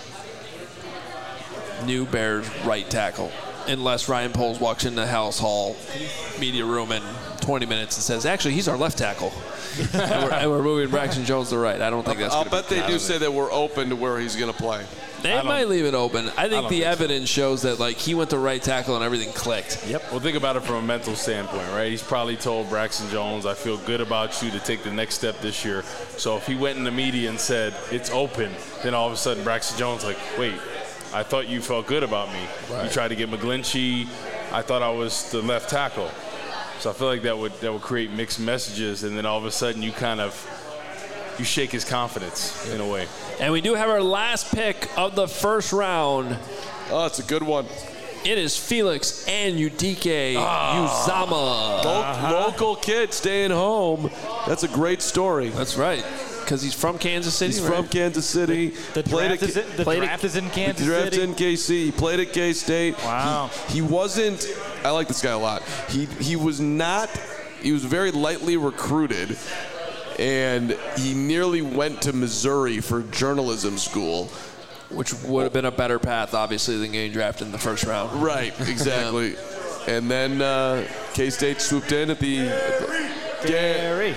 New Bears right tackle. Unless Ryan Poles walks into House Hall media room in 20 minutes and says, actually, he's our left tackle. and we're moving Braxton Jones to right. I don't think that's I'll bet they do say that we're open to where he's going to play. They might leave it open. I think the evidence shows that he went to right tackle and everything clicked. Yep. Well, think about it from a mental standpoint, right? He's probably told Braxton Jones, I feel good about you to take the next step this year. So if he went in the media and said, it's open, then all of a sudden Braxton Jones wait, I thought you felt good about me. Right. You tried to get McGlinchey. I thought I was the left tackle. So I feel like that would create mixed messages, and then all of a sudden you kind of you shake his confidence in a way. And we do have our last pick of the first round. Oh, it's a good one. It is Felix Anudike Uzama. Local kid staying home. That's a great story. That's right, because he's from Kansas City. He's from Kansas City. The draft is in Kansas The draft's City? in KC. He played at K-State. Wow. He wasn't – I like this guy a lot. He was not – he was very lightly recruited, and he nearly went to Missouri for journalism school. Which would have been a better path, obviously, than getting drafted in the first round. Right, exactly. And then K-State swooped in at the Gary.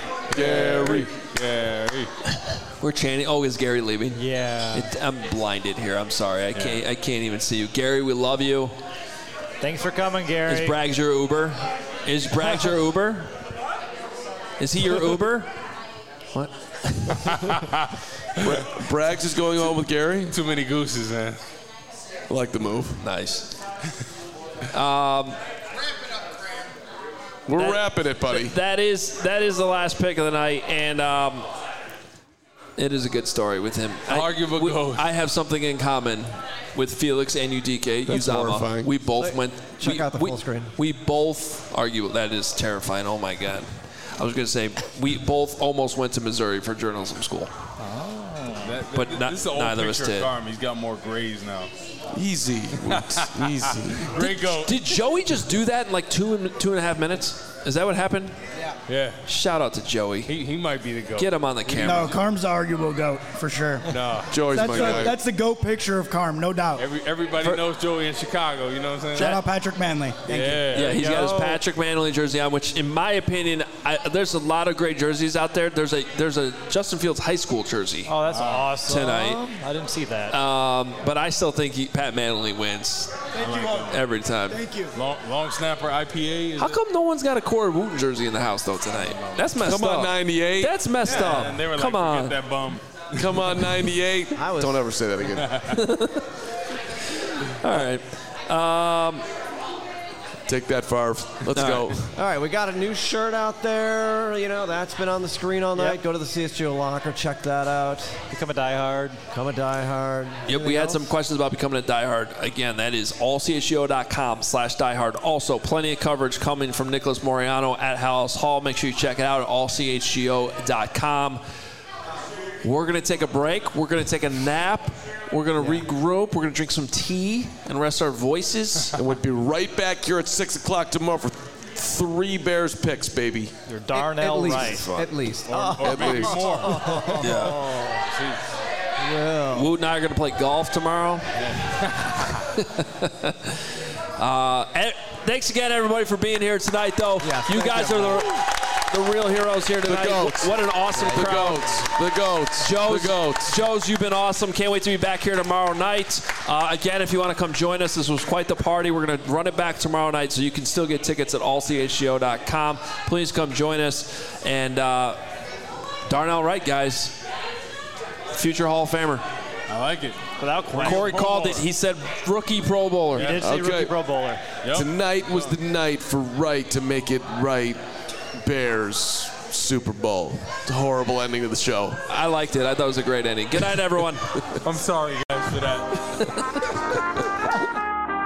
We're chanting. Oh, is Gary leaving? Yeah. I'm blinded here. I'm sorry. I can't even see you. Gary, we love you. Thanks for coming, Gary. Is Braggs your Uber? Is Braggs your Uber? Is he your Uber? What? Braggs is going on with Gary. Too many gooses, man. I like the move. Nice. We're wrapping it, buddy. That is the last pick of the night, and it is a good story with him. Arguable goat. I have something in common with Felix Anudike That's Uzama. horrifying. We both went. Check out the full screen. We both argue. That is terrifying. Oh my God. I was going to say we both almost went to Missouri for journalism school. But this is the old neither of us picture did. of Carm. He's got more grays now. Easy. Easy. Great goat. Did Joey just do that in like 2.5 minutes? Is that what happened? Yeah. Shout out to Joey. He might be the goat. Get him on the camera. No, Carm's the arguable GOAT, for sure. No. Joey's my guy. That's the GOAT picture of Carm, no doubt. Everybody knows Joey in Chicago, you know what I'm saying? Shout out Patrick Manley. Thank you. Yeah, he's got his Patrick Manley jersey on, which, in my opinion, there's a lot of great jerseys out there. There's a Justin Fields high school jersey. Oh, that's awesome. Tonight. I didn't see that. But I still think Pat Manley wins every time. Thank you. Long snapper IPA. How come no one's got a Corey Wooten jersey in the house, though, tonight? That's messed Come up. on, 98. That's messed up. And they were Come like, on. forget that bum. Come on, 98. Don't ever say that again. All right. Take that, Favre. Let's go. All right, we got a new shirt out there. You know, that's been on the screen all night. Go to the CSGO locker, check that out. Become a diehard. Become a diehard. Yep, we had some questions about becoming a diehard. Again, that is allchgo.com/diehard. Also, plenty of coverage coming from Nicholas Moriano at House Hall. Make sure you check it out at allchgo.com. We're going to take a break. We're going to take a nap. We're going to regroup. We're going to drink some tea and rest our voices. And we'll be right back here at 6 o'clock tomorrow for 3 Bears picks, baby. You're Darnell right. At least. At least. Yeah. Woot and I are going to play golf tomorrow. Thanks again, everybody, for being here tonight, though. Yes, you guys are the real heroes here tonight. The goats. What an awesome crowd. The goats. Joe's, The goats. Joe's, you've been awesome. Can't wait to be back here tomorrow night. Again, if you want to come join us, this was quite the party. We're going to run it back tomorrow night, so you can still get tickets at allchgo.com. Please come join us. And Darnell Wright, guys, future Hall of Famer. I like it. Without question. Corey called it. He said rookie Pro Bowler. He did say rookie Pro Bowler. Yep. Tonight was the night for Wright to make it right. Bears Super Bowl. It's a horrible ending to the show. I liked it. I thought it was a great ending. Good night, everyone. I'm sorry, guys, for that.